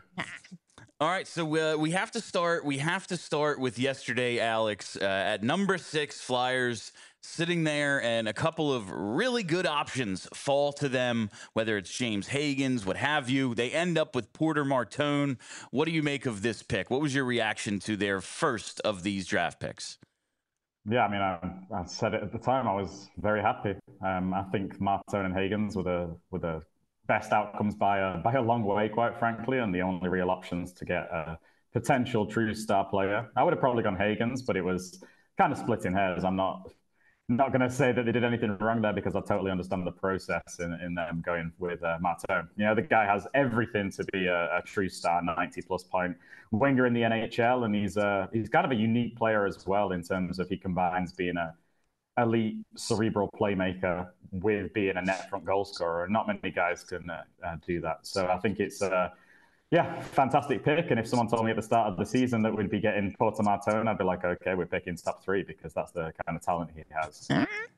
All right, so uh, we have to start. We have to start with yesterday, Alex. Uh, at number six, Flyers sitting there, and a couple of really good options fall to them. Whether it's James Hagens, what have you, they end up with Porter Martone. What do you make of this pick? What was your reaction to their first of these draft picks? Yeah, I mean, I, I said it at the time. I was very happy. Um, I think Martone and Hagens were the were the best outcomes by a by a long way, quite frankly, and the only real options to get a potential true star player. I would have probably gone Hagens, but it was kind of splitting hairs. I'm not not going to say that they did anything wrong there because I totally understand the process in, in them going with uh, Martone. You know, the guy has everything to be a, a true star, ninety plus point winger in the N H L, and he's uh, he's kind of a unique player as well in terms of he combines being a elite cerebral playmaker with being a net front goal scorer. Not many guys can uh, uh, do that. So I think it's uh, yeah, fantastic pick. And if someone told me at the start of the season that we'd be getting Porter Martone, I'd be like, okay, we're picking top three because that's the kind of talent he has.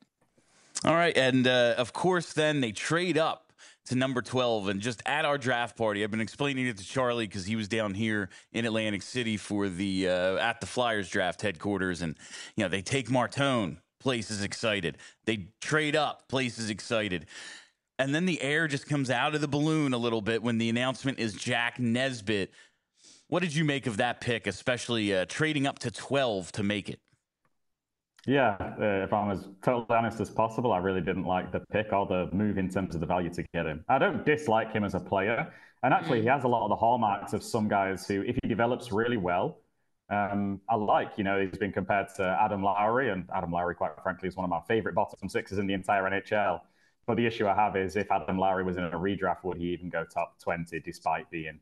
All right, and uh, of course, then they trade up to number twelve, and just at our draft party, I've been explaining it to Charlie because he was down here in Atlantic City for the uh, at the Flyers draft headquarters, and you know they take Martone, place is excited. They trade up, place is excited. And then the air just comes out of the balloon a little bit when the announcement is Jack Nesbitt. What did you make of that pick, especially uh, trading up to twelve to make it? Yeah, uh, if I'm as totally honest as possible, I really didn't like the pick or the move in terms of the value to get him. I don't dislike him as a player. And actually, he has a lot of the hallmarks of some guys who, if he develops really well, um, I like. You know, he's been compared to Adam Lowry, and Adam Lowry, quite frankly, is one of my favorite bottom sixes in the entire N H L. But the issue I have is if Adam Lowry was in a redraft, would he even go top twenty despite being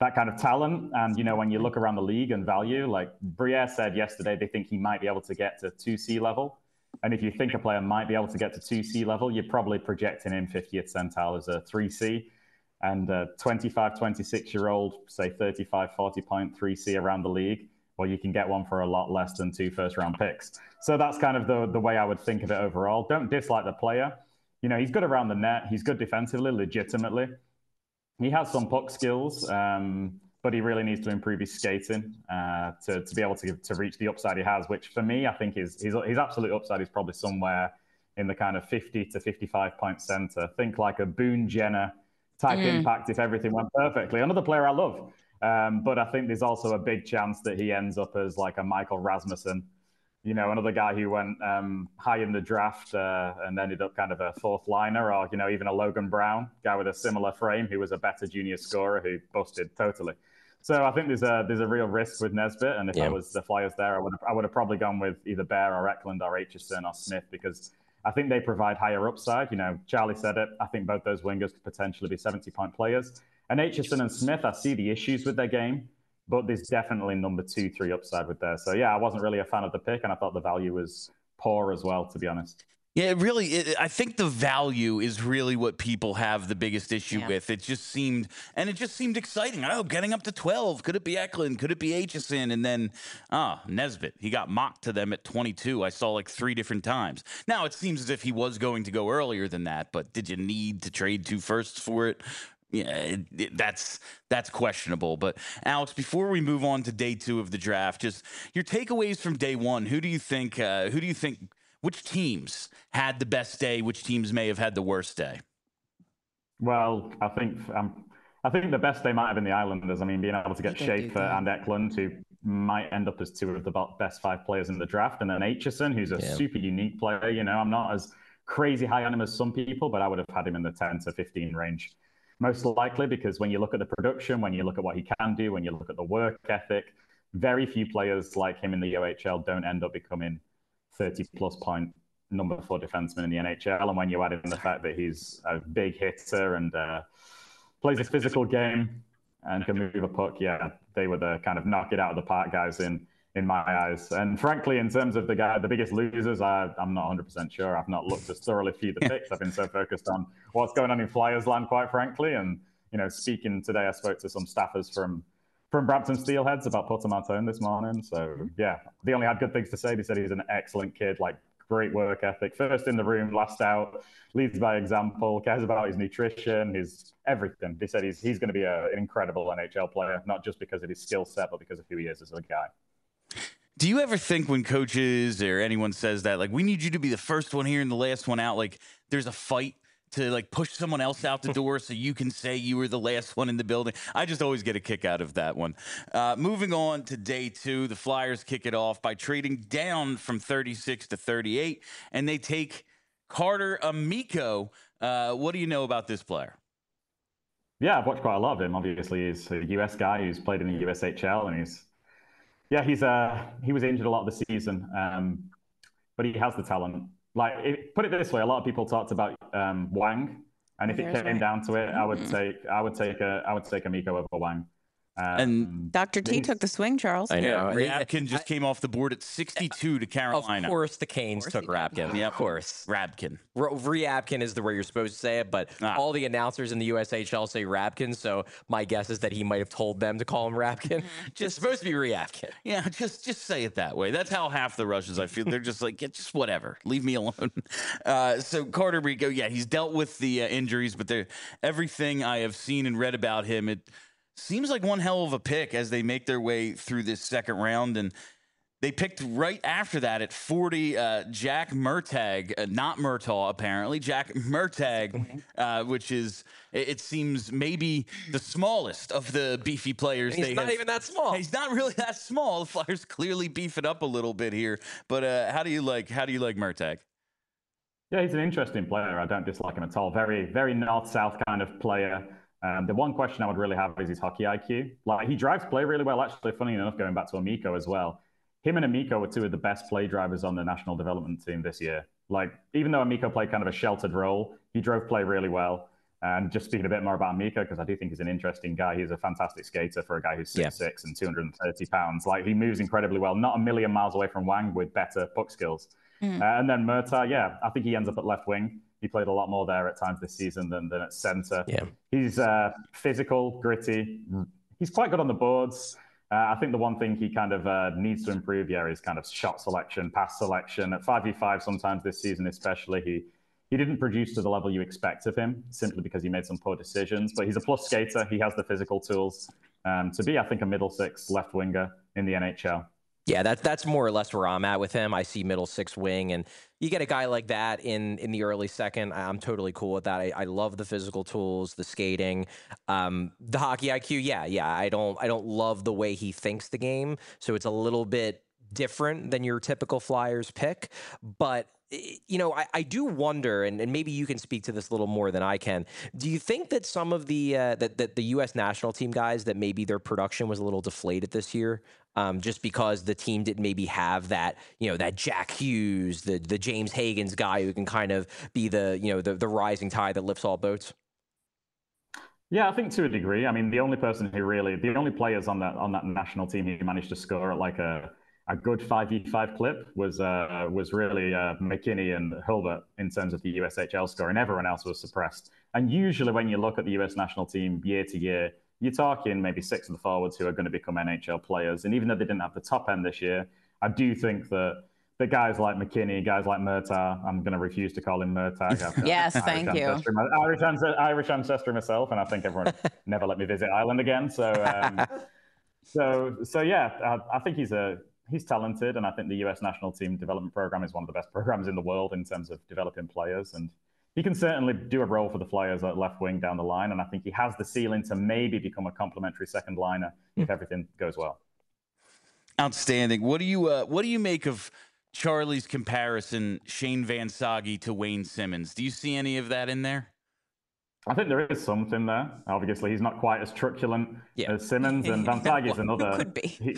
that kind of talent. And, you know, when you look around the league and value, like Briere said yesterday, they think he might be able to get to two C level. And if you think a player might be able to get to two C level, you're probably projecting him fiftieth centile as a three C. And a twenty-five, twenty-six-year-old, say thirty-five, forty point three C around the league, well, you can get one for a lot less than two first-round picks. So that's kind of the, the way I would think of it overall. Don't dislike the player. You know, he's good around the net. He's good defensively, legitimately. He has some puck skills, um, but he really needs to improve his skating uh, to, to be able to, to reach the upside he has, which for me, I think is his, his absolute upside is probably somewhere in the kind of fifty to fifty-five point center. Think like a Boone Jenner type mm. impact if everything went perfectly. Another player I love. Um, but I think there's also a big chance that he ends up as like a Michael Rasmussen, you know, another guy who went um, high in the draft uh, and ended up kind of a fourth liner, or, you know, even a Logan Brown, guy with a similar frame who was a better junior scorer who busted totally. So I think there's a there's a real risk with Nesbitt. And if yeah. I was the Flyers there, I would have, I would have probably gone with either Bear or Eklund or Aitchison or Smith, because I think they provide higher upside. You know, Charlie said it. I think both those wingers could potentially be seventy-point players. And Aitchison and Smith, I see the issues with their game, but there's definitely number two, three upside with there. So, yeah, I wasn't really a fan of the pick, and I thought the value was poor as well, to be honest. Yeah, it really, it, I think the value is really what people have the biggest issue yeah. with. It just seemed, and it just seemed exciting. Oh, getting up to twelve. Could it be Eklund? Could it be Aitchison? And then, ah, Nesbitt. He got mocked to them at twenty-two. I saw like three different times. Now, it seems as if he was going to go earlier than that, but did you need to trade two firsts for it? Yeah, it, it, that's that's questionable. But Alex, before we move on to day two of the draft, just your takeaways from day one. Who do you think? Uh, who do you think? Which teams had the best day? Which teams may have had the worst day? Well, I think um, I think the best day might have been the Islanders. I mean, being able to get Schaefer and Eklund, who might end up as two of the best five players in the draft, and then Aitchison, who's a yeah. super unique player. You know, I'm not as crazy high on him as some people, but I would have had him in the ten to fifteen range. Most likely, because when you look at the production, when you look at what he can do, when you look at the work ethic, very few players like him in the O H L don't end up becoming thirty plus point number four defenseman in the N H L. And when you add in the fact that he's a big hitter and uh, plays a physical game and can move a puck, yeah, they were the kind of knock it out of the park guys in in my eyes. And frankly, in terms of the guy, the biggest losers, I, I'm not one hundred percent sure. I've not looked as thoroughly through the picks. I've been so focused on what's going on in Flyers land, quite frankly. And, you know, speaking today, I spoke to some staffers from from Brampton Steelheads about Puttamatone this morning. So, yeah, they only had good things to say. They said he's an excellent kid, like great work ethic, first in the room, last out, leads by example, cares about his nutrition, his everything. They said he's, he's going to be a, an incredible N H L player, not just because of his skill set, but because of who he is as a guy. Do you ever think when coaches or anyone says that, like, we need you to be the first one here and the last one out, like there's a fight to like push someone else out the door so you can say you were the last one in the building? I just always get a kick out of that one. Uh, moving on to day two, the Flyers kick it off by trading down from thirty-six to thirty-eight, and they take Carter Amico. Uh, what do you know about this player? Yeah, I've watched quite a lot of him. Obviously, he's a U S guy who's played in the U S H L, and he's Yeah, he's uh he was injured a lot of the season, um, but he has the talent. Like, it, put it this way, a lot of people talked about um, Wang, and if There's it came right. down to it, I would take I would take a I would take Amico over Wang. Um, and Doctor T took the swing, Charles. I know. Yeah, Rabkin just I, came off the board at sixty-two to Carolina. Of course, the Canes took Rabkin. Yeah, of course. Rabkin. R- Rabkin is the way you're supposed to say it, but ah. all the announcers in the U S H L say Rabkin, so my guess is that he might have told them to call him Rabkin. Just it's supposed to be Rabkin. Yeah, just just say it that way. That's how half the Russians, I feel. They're just like, yeah, just whatever. Leave me alone. Uh, so Carter Rico, yeah, he's dealt with the uh, injuries, but everything I have seen and read about him, it seems like one hell of a pick as they make their way through this second round. And they picked right after that at forty, uh, Jack Murtagh, uh, not Murtaugh, apparently. Jack Murtagh, uh, which is, it, it seems, maybe the smallest of the beefy players. He's they not have. even that small. He's not really that small. The Flyers clearly beef it up a little bit here. But uh, how do you like, how do you like Murtagh? Yeah, he's an interesting player. I don't dislike him at all. Very, very north-south kind of player. Um, the one question I would really have is his hockey I Q. Like, he drives play really well, actually, funny enough, going back to Amico as well. Him and Amico were two of the best play drivers on the national development team this year. Like, even though Amico played kind of a sheltered role, he drove play really well. And just speaking a bit more about Mika, because I do think he's an interesting guy. He's a fantastic skater for a guy who's six foot six yeah. and two hundred thirty pounds. Like, he moves incredibly well, not a million miles away from Wang with better puck skills. Mm. Uh, and then Murtaugh, yeah, I think he ends up at left wing. He played a lot more there at times this season than, than at center. Yeah. He's uh, physical, gritty. He's quite good on the boards. Uh, I think the one thing he kind of uh, needs to improve, yeah, is kind of shot selection, pass selection. At five v five sometimes this season especially, he he didn't produce to the level you expect of him simply because he made some poor decisions. But he's a plus skater. He has the physical tools um, to be, I think, a middle six left winger in the N H L. Yeah, that's that's more or less where I'm at with him. I see middle six wing, and you get a guy like that in in the early second. I'm totally cool with that. I, I love the physical tools, the skating, um, the hockey I Q. Yeah, yeah. I don't I don't love the way he thinks the game, so it's a little bit different than your typical Flyers pick, but. You know, I, I do wonder, and, and maybe you can speak to this a little more than I can. Do you think that some of the uh, that, that the U S national team guys, that maybe their production was a little deflated this year, um, just because the team didn't maybe have that, you know, that Jack Hughes, the the James Hagens guy who can kind of be the, you know, the, the rising tide that lifts all boats? Yeah, I think to a degree. I mean, the only person who really, the only players on that on that national team who managed to score at like a a good five v five clip was uh, was really uh, McKinney and Hilbert in terms of the U S H L score, and everyone else was suppressed. And usually when you look at the U S national team year to year, you're talking maybe six of the forwards who are going to become N H L players. And even though they didn't have the top end this year, I do think that the guys like McKinney, guys like Murtaugh, I'm going to refuse to call him Murtaugh. Yes, thank Irish you. Ancestry, Irish, ancestry, Irish ancestry myself, and I think everyone never let me visit Ireland again. So, um, so, so yeah, I, I think he's a he's talented, and I think the U S national team development program is one of the best programs in the world in terms of developing players, and he can certainly do a role for the Flyers at left wing down the line, and I think he has the ceiling to maybe become a complementary second liner if everything goes well. Outstanding. What do you uh, what do you make of Charlie's comparison, Shane Van Sage to Wayne Simmons? Do you see any of that in there? I think there is something there. Obviously, he's not quite as truculent yeah. as Simmons, and Van Sage is another. Could be. He,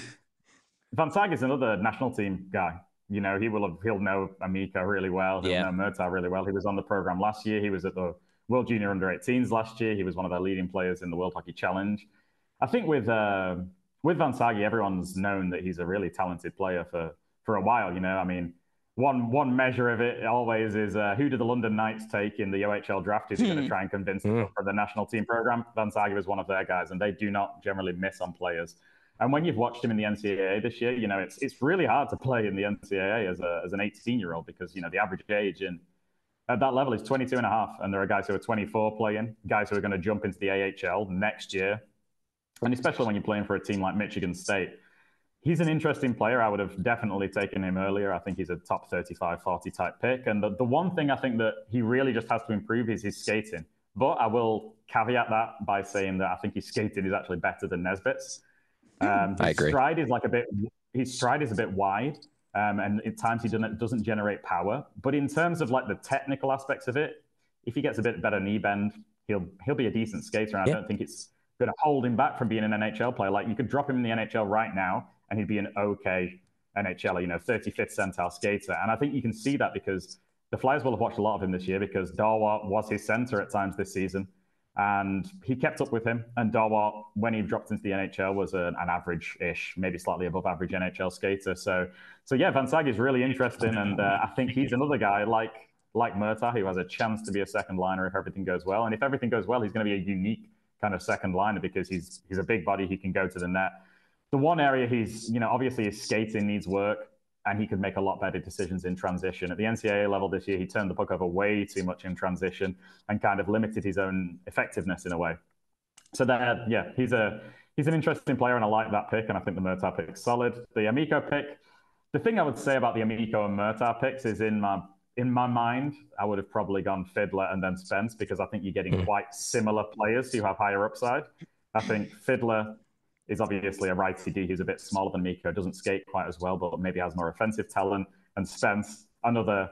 Van Sage is another national team guy. You know, he will have, he'll know Amica really well. He'll yeah. know Murtaugh really well. He was on the program last year. He was at the World Junior Under eighteens last year. He was one of their leading players in the World Hockey Challenge. I think with uh, with Van Sage, everyone's known that he's a really talented player for for a while. You know, I mean, one one measure of it always is uh, who do the London Knights take in the O H L draft? Is he going to try and convince them for the national team program? Van Sage was one of their guys, and they do not generally miss on players. And when you've watched him in the N C double A this year, you know, it's it's really hard to play in the N C double A as a as an eighteen-year-old because, you know, the average age in at that level is twenty-two and a half. And there are guys who are twenty-four playing, guys who are going to jump into the A H L next year. And especially when you're playing for a team like Michigan State. He's an interesting player. I would have definitely taken him earlier. I think he's a top thirty-five, forty type pick. And the, the one thing I think that he really just has to improve is his skating. But I will caveat that by saying that I think his skating is actually better than Nesbitt's. Um, his I agree. stride is like a bit. His stride is a bit wide, um, and at times he doesn't doesn't generate power. But in terms of like the technical aspects of it, if he gets a bit better knee bend, he'll he'll be a decent skater. And yeah. I don't think it's going to hold him back from being an N H L player. Like you could drop him in the N H L right now, and he'd be an okay N H L, you know, thirty-fifth centile skater. And I think you can see that because the Flyers will have watched a lot of him this year because Dawa was his center at times this season. And he kept up with him. And Dawa, when he dropped into the N H L, was an, an average-ish, maybe slightly above average N H L skater. So, so yeah, Van Sage is really interesting. And uh, I think he's another guy like like Murtaugh who has a chance to be a second liner if everything goes well. And if everything goes well, he's going to be a unique kind of second liner because he's he's a big body. He can go to the net. The one area he's, you know, obviously his skating needs work. And he could make a lot better decisions in transition. At the N C double A level this year, he turned the puck over way too much in transition and kind of limited his own effectiveness in a way. So that, yeah, he's a he's an interesting player, and I like that pick, and I think the Murtaugh pick is solid. The Amico pick, the thing I would say about the Amico and Murtaugh picks is in my in my mind, I would have probably gone Fiddler and then Spence because I think you're getting mm. quite similar players who have higher upside. I think Fiddler is obviously a righty D who's a bit smaller than Miko, doesn't skate quite as well, but maybe has more offensive talent. And Spence, another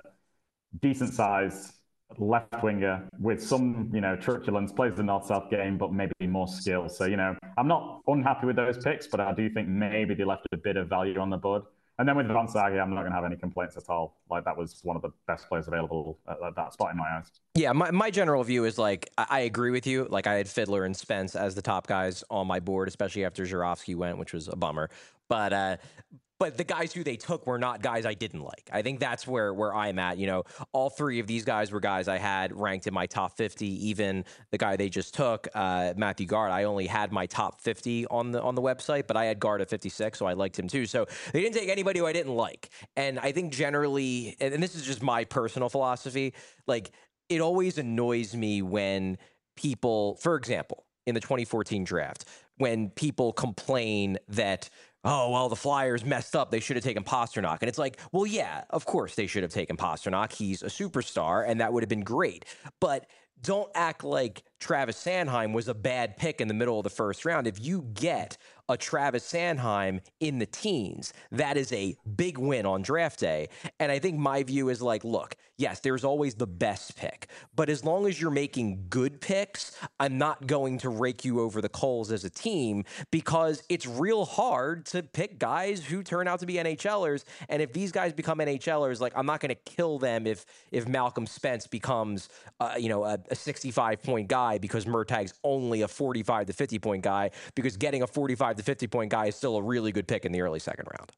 decent-sized left winger with some, you know, truculence, plays the North-South game, but maybe more skill. So, you know, I'm not unhappy with those picks, but I do think maybe they left a bit of value on the board. And then with Vonsaga, I'm not going to have any complaints at all. Like, that was one of the best players available at, at that spot in my eyes. Yeah, my, my general view is, like, I, I agree with you. Like, I had Fiddler and Spence as the top guys on my board, especially after Żurawski went, which was a bummer. But uh, but the guys who they took were not guys I didn't like. I think that's where where I'm at. You know, all three of these guys were guys I had ranked in my top fifty. Even the guy they just took, uh, Matthew Guard, I only had my top fifty on the on the website, but I had Guard at fifty-six, so I liked him too. So they didn't take anybody who I didn't like. And I think generally, and, and this is just my personal philosophy, like, it always annoys me when people, for example, in the twenty fourteen draft, when people complain that, oh, well, the Flyers messed up, they should have taken Pastrnak. And it's like, well, yeah, of course they should have taken Pastrnak. He's a superstar, and that would have been great. But don't act like Travis Sanheim was a bad pick in the middle of the first round. If you get a Travis Sanheim in the teens, that is a big win on draft day. And I think my view is like, look, yes, there's always the best pick, but as long as you're making good picks, I'm not going to rake you over the coals as a team, because it's real hard to pick guys who turn out to be NHLers. And if these guys become NHLers, like, I'm not going to kill them if if Malcolm Spence becomes, uh, you know, a, a sixty-five point guy because Murtag's only a forty-five to fifty point guy, because getting a forty-five to fifty point guy is still a really good pick in the early second round.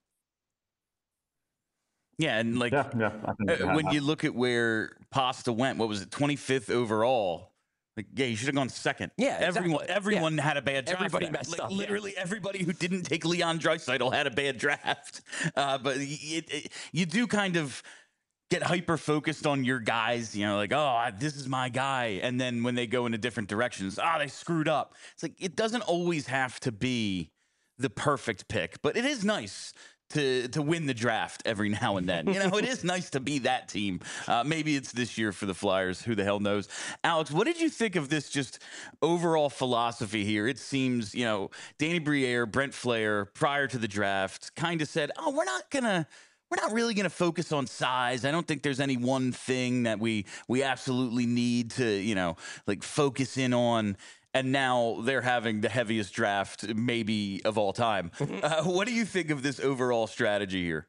Yeah, and like yeah, yeah, uh, when you look at where Pasta went, what was it, twenty-fifth overall? Like, yeah, you should have gone second. Yeah, everyone, exactly. everyone yeah. had a bad draft. Everybody messed like, up. Literally, yeah. everybody who didn't take Leon Draisaitl had a bad draft. Uh, but it, it, you do kind of get hyper focused on your guys, you know, like, oh, this is my guy. And then when they go into different directions, ah, oh, they screwed up. It's like, it doesn't always have to be the perfect pick, but it is nice to to win the draft every now and then. You know, it is nice to be that team. Uh, maybe it's this year for the Flyers. Who the hell knows? Alex, what did you think of this just overall philosophy here? It seems, you know, Danny Briere, Brent Flair, prior to the draft, kind of said, oh, we're not going to We're not really going to focus on size. I don't think there's any one thing that we we absolutely need to, you know, like focus in on. And now they're having the heaviest draft maybe of all time. Uh, what do you think of this overall strategy here?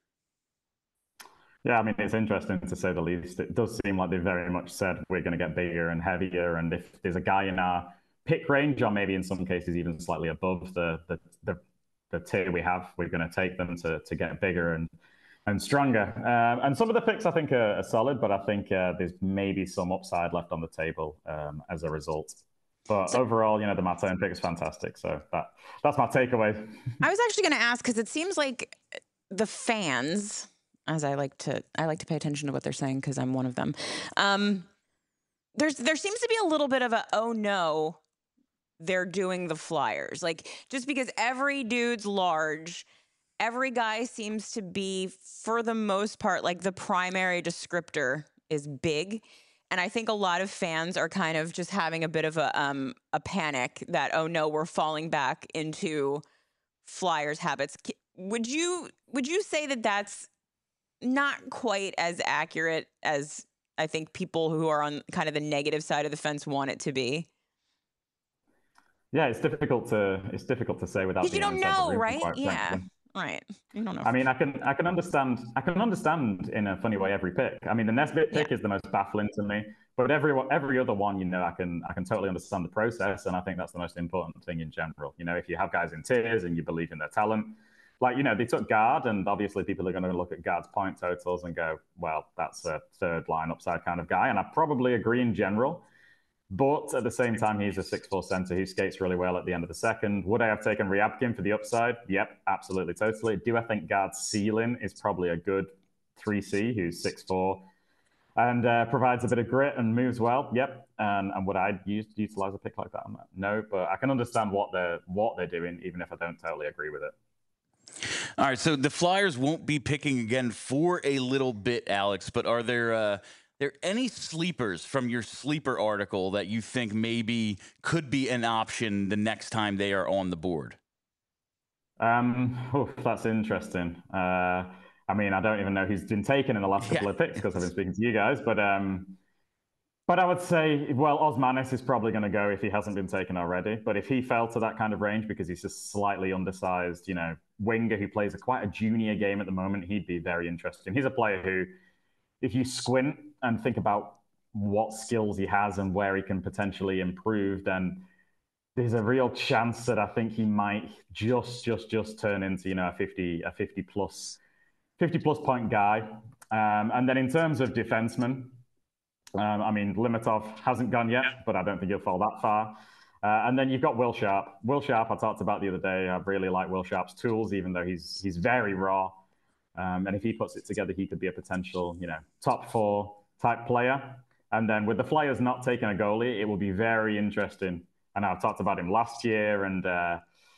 Yeah, I mean, it's interesting to say the least. It does seem like they very much said we're going to get bigger and heavier. And if there's a guy in our pick range, or maybe in some cases even slightly above the the the, the tier we have, we're going to take them to to get bigger and and stronger. Um, and some of the picks I think are, are solid, but I think uh, there's maybe some upside left on the table um, as a result. But so, overall, you know, the Martin pick is fantastic. So that that's my takeaway. I was actually going to ask, because it seems like the fans, as I like to, I like to pay attention to what they're saying because I'm one of them. Um, there's there seems to be a little bit of a, oh no, they're doing the Flyers. Like, just because every dude's large, every guy seems to be, for the most part, like the primary descriptor is big. And I think a lot of fans are kind of just having a bit of a um, a panic that, oh no, we're falling back into Flyers habits. Would you would you say that that's not quite as accurate as I think people who are on kind of the negative side of the fence want it to be? Yeah, it's difficult to it's difficult to say without. Because you don't know, right? Yeah. Frankly. Right. You don't know. I mean, I can I can understand I can understand in a funny way every pick. I mean, the Nesbitt pick yeah. is the most baffling to me, but every every other one, you know, I can I can totally understand the process, and I think that's the most important thing in general. You know, if you have guys in tiers and you believe in their talent, like, you know, they took Guard, and obviously people are going to look at Guard's point totals and go, well, that's a third line upside kind of guy, and I probably agree in general. But at the same time, he's a six four center who skates really well at the end of the second. Would I have taken Ryabkin for the upside? Yep, absolutely, totally. Do I think Guard's ceiling is probably a good three C who's six four and uh, provides a bit of grit and moves well? Yep. And, and would I use, utilize a pick like that? No, but I can understand what they're, what they're doing, even if I don't totally agree with it. All right, so the Flyers won't be picking again for a little bit, Alex, but are there... Uh... there any sleepers from your sleeper article that you think maybe could be an option the next time they are on the board? Um, oh, that's interesting. Uh, I mean, I don't even know who's been taken in the last couple yeah. of picks because I've been speaking to you guys, but um, But I would say, well, Osmanis is probably going to go if he hasn't been taken already. But if he fell to that kind of range because he's just slightly undersized, you know, winger who plays a quite a junior game at the moment, he'd be very interesting. He's a player who, if you squint and think about what skills he has and where he can potentially improve, then there's a real chance that I think he might just, just, just turn into, you know, a fifty, a fifty plus, fifty plus point guy. Um, and then in terms of defensemen, um, I mean, Limitov hasn't gone yet, but I don't think he'll fall that far. Uh, and then you've got Will Sharp. Will Sharp, I talked about the other day. I really like Will Sharp's tools, even though he's he's very raw. Um, and if he puts it together, he could be a potential, you know, top four type player. And then with the Flyers not taking a goalie, it will be very interesting. And I've talked about him last year, and uh,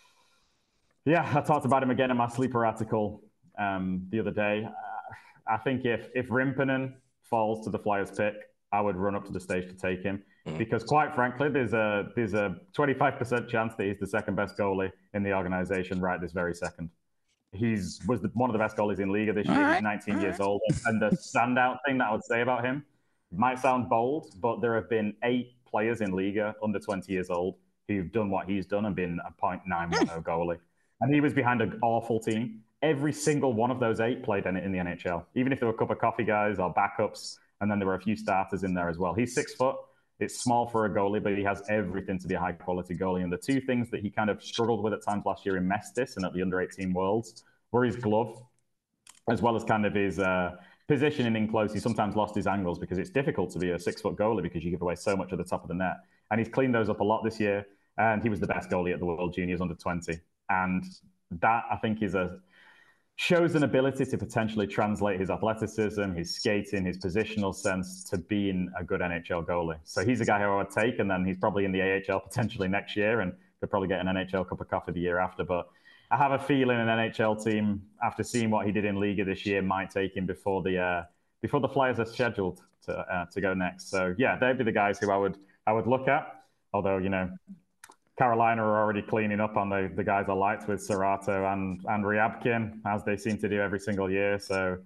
yeah, I talked about him again in my sleeper article um, the other day. Uh, I think if if Rimpinen falls to the Flyers pick, I would run up to the stage to take him mm. because, quite frankly, there's a there's a twenty-five percent chance that he's the second best goalie in the organization right this very second. He's was the, one of the best goalies in Liga this year. Right. He's nineteen All years right. old. And the standout thing that I would say about him might sound bold, but there have been eight players in Liga under twenty years old who've done what he's done and been a point nine one oh goalie. And he was behind an awful team. Every single one of those eight played in, in the N H L, even if there were a cup of coffee guys or backups. And then there were a few starters in there as well. He's six foot. It's small for a goalie, but he has everything to be a high-quality goalie. And the two things that he kind of struggled with at times last year in Mestis and at the under eighteen Worlds were his glove, as well as kind of his uh, positioning in close. He sometimes lost his angles because it's difficult to be a six-foot goalie because you give away so much at the top of the net. And he's cleaned those up a lot this year. And he was the best goalie at the World Juniors under twenty. And that, I think, is a... shows an ability to potentially translate his athleticism, his skating, his positional sense to being a good N H L goalie. So he's a guy who I would take, and then he's probably in the A H L potentially next year and could probably get an N H L cup of coffee the year after. But I have a feeling an N H L team, after seeing what he did in Liga this year, might take him before the uh, before the Flyers are scheduled to uh, to go next. So yeah, they'd be the guys who I would I would look at. Although, you know, Carolina are already cleaning up on the, the guys I liked with Serato and, and Ryabkin, as they seem to do every single year. So,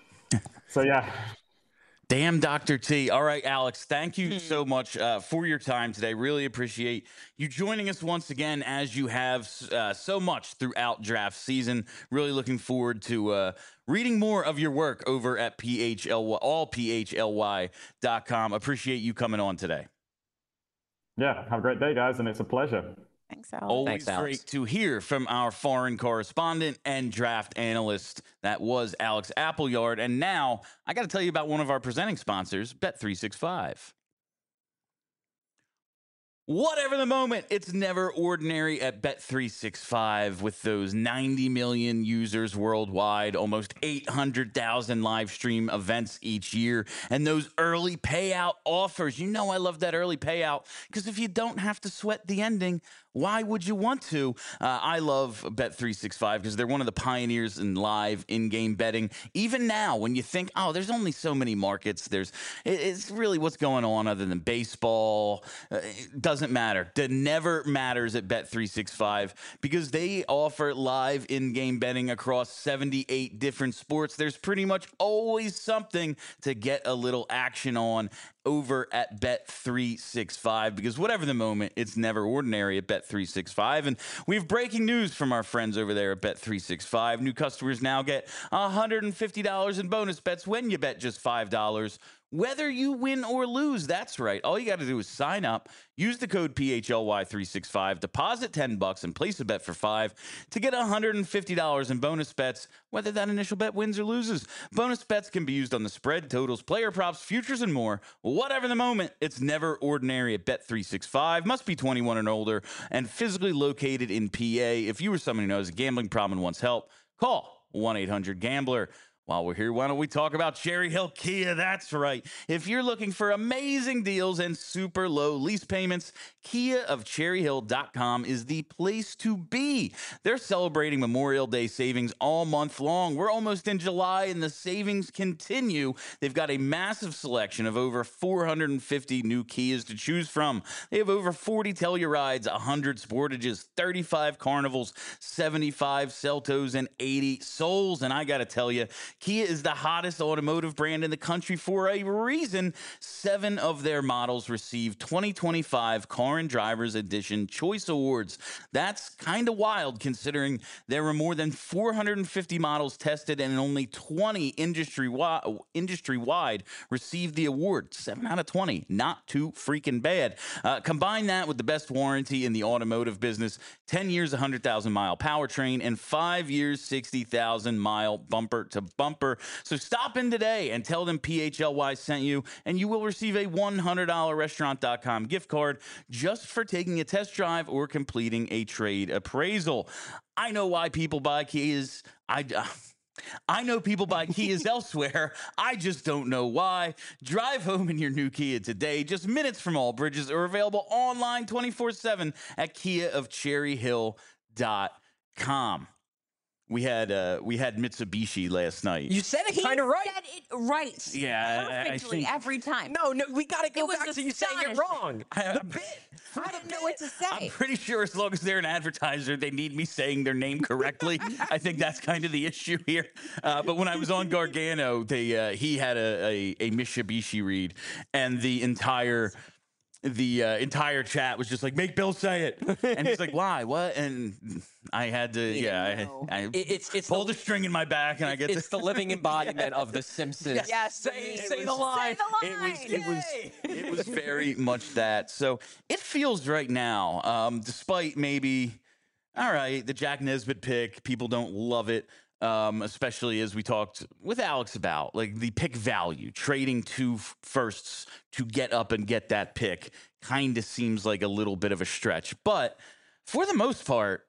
so yeah. Damn, Doctor T. All right, Alex, thank you so much uh, for your time today. Really appreciate you joining us once again, as you have uh, so much throughout draft season. Really looking forward to uh, reading more of your work over at P H L Y, all P H L Y dot com. Appreciate you coming on today. Yeah, have a great day, guys, and it's a pleasure. Thanks, Alex. Always Thanks, Alex. great to hear from our foreign correspondent and draft analyst. That was Alex Appleyard. And now I got to tell you about one of our presenting sponsors, Bet three sixty-five. Whatever the moment, it's never ordinary at Bet three sixty-five with those ninety million users worldwide, almost eight hundred thousand live stream events each year, and those early payout offers. You know I love that early payout because if you don't have to sweat the ending, why would you want to? Uh, I love Bet three sixty-five because they're one of the pioneers in live in-game betting. Even now, when you think, oh, there's only so many markets, there's it's really what's going on other than baseball. Uh, it doesn't matter. It never matters at Bet three sixty-five because they offer live in-game betting across seventy-eight different sports. There's pretty much always something to get a little action on over at Bet three sixty-five because whatever the moment, it's never ordinary at Bet three sixty-five. And we have breaking news from our friends over there at Bet three sixty-five. New customers now get one hundred fifty dollars in bonus bets when you bet just five dollars. Whether you win or lose, that's right. All you got to do is sign up, use the code P H L Y three sixty-five, deposit ten bucks, and place a bet for five to get one hundred fifty dollars in bonus bets, whether that initial bet wins or loses. Bonus bets can be used on the spread, totals, player props, futures, and more. Whatever the moment, it's never ordinary at Bet three sixty-five. Must be twenty-one and older and physically located in P A. If you or someone who knows a gambling problem and wants help, call one eight hundred gambler. While we're here, why don't we talk about Cherry Hill Kia? That's right. If you're looking for amazing deals and super low lease payments, Kia of Cherry Hill dot com is the place to be. They're celebrating Memorial Day savings all month long. We're almost in July and the savings continue. They've got a massive selection of over four hundred fifty new Kias to choose from. They have over forty Tellurides, one hundred Sportages, thirty-five Carnivals, seventy-five Celtos, and eighty Souls. And I got to tell you, Kia is the hottest automotive brand in the country for a reason. Seven of their models received twenty twenty-five Car and Drivers Edition Choice Awards. That's kind of wild considering there were more than four hundred fifty models tested and only twenty industry wi- industry-wide received the award. seven out of twenty. Not too freaking bad. Uh, combine that with the best warranty in the automotive business, ten years, one hundred thousand mile powertrain, and five years, sixty thousand mile bumper to bumper. So stop in today and tell them P H L Y sent you, and you will receive a one hundred dollars restaurant dot com gift card just for taking a test drive or completing a trade appraisal. I know why people buy Kias. I. Uh, I know people buy Kias elsewhere. I just don't know why. Drive home in your new Kia today, just minutes from all bridges, are available online twenty-four seven at kia of cherry hill dot com. We had uh, we had Mitsubishi last night. You said it kind of right. Said it right. Yeah, I- I perfectly think- every time. No, no, we got to go It was back to you saying it astonishing. wrong. I- The bit. I didn't know what to say. I'm pretty sure as long as they're an advertiser, they need me saying their name correctly. I think that's kind of the issue here. Uh, but when I was on Gargano, they uh, he had a, a, a Mitsubishi read, and the entire the uh, entire chat was just like, "Make Bill say it," and he's like, "Why? What?" And I had to, yeah, know. I, I It- it's it's pulled the, a string in my back, and I get it's the, the living embodiment of the Simpsons. Yes, say, it say was- the line. Say the It was, line. it was, Yay! it was very much that. So it feels right now, um, despite maybe, all right, the Jack Nesbitt pick, people don't love it, um, especially as we talked with Alex about, like the pick value, trading two f- firsts to get up and get that pick kind of seems like a little bit of a stretch. But for the most part,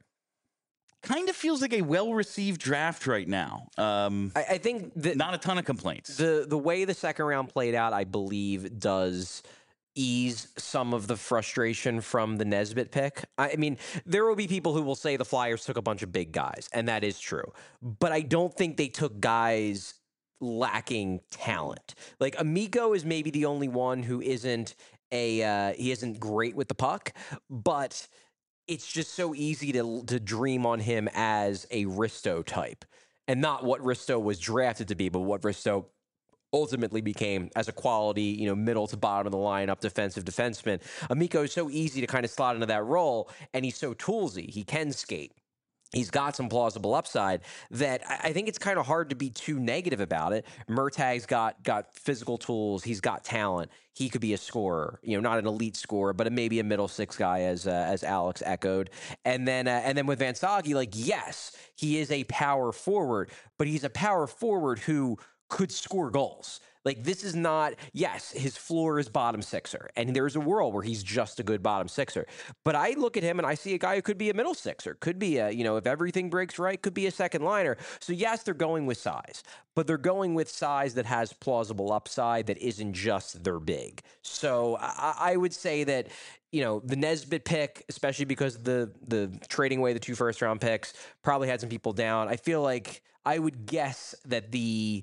kind of feels like a well-received draft right now. Um, I, I think that not a ton of complaints. the the way the second round played out, I believe, does ease some of the frustration from the Nesbitt pick. I I mean, there will be people who will say the Flyers took a bunch of big guys, and that is true. But I don't think they took guys lacking talent. Like Amico is maybe the only one who isn't a uh, he isn't great with the puck, but it's just so easy to to dream on him as a Risto type, and not what Risto was drafted to be, but what Risto ultimately became as a quality, you know, middle to bottom of the lineup defensive defenseman. Amico is so easy to kind of slot into that role, and he's so toolsy. He can skate. He's got some plausible upside that I I think it's kind of hard to be too negative about it. Murtag's got got physical tools. He's got talent. He could be a scorer, you know, not an elite scorer, but a, maybe a middle six guy, as uh, as Alex echoed. And then uh, and then with Van Sage, like yes, he is a power forward, but he's a power forward who could score goals. Like this is not, yes, his floor is bottom sixer, and there's a world where he's just a good bottom sixer. But I look at him and I see a guy who could be a middle sixer, could be a, you know, if everything breaks right, could be a second liner. So yes, they're going with size, but they're going with size that has plausible upside that isn't just they're big. So I, I would say that, you know, the Nesbitt pick, especially because the the trading away the two first round picks probably had some people down. I feel like I would guess that the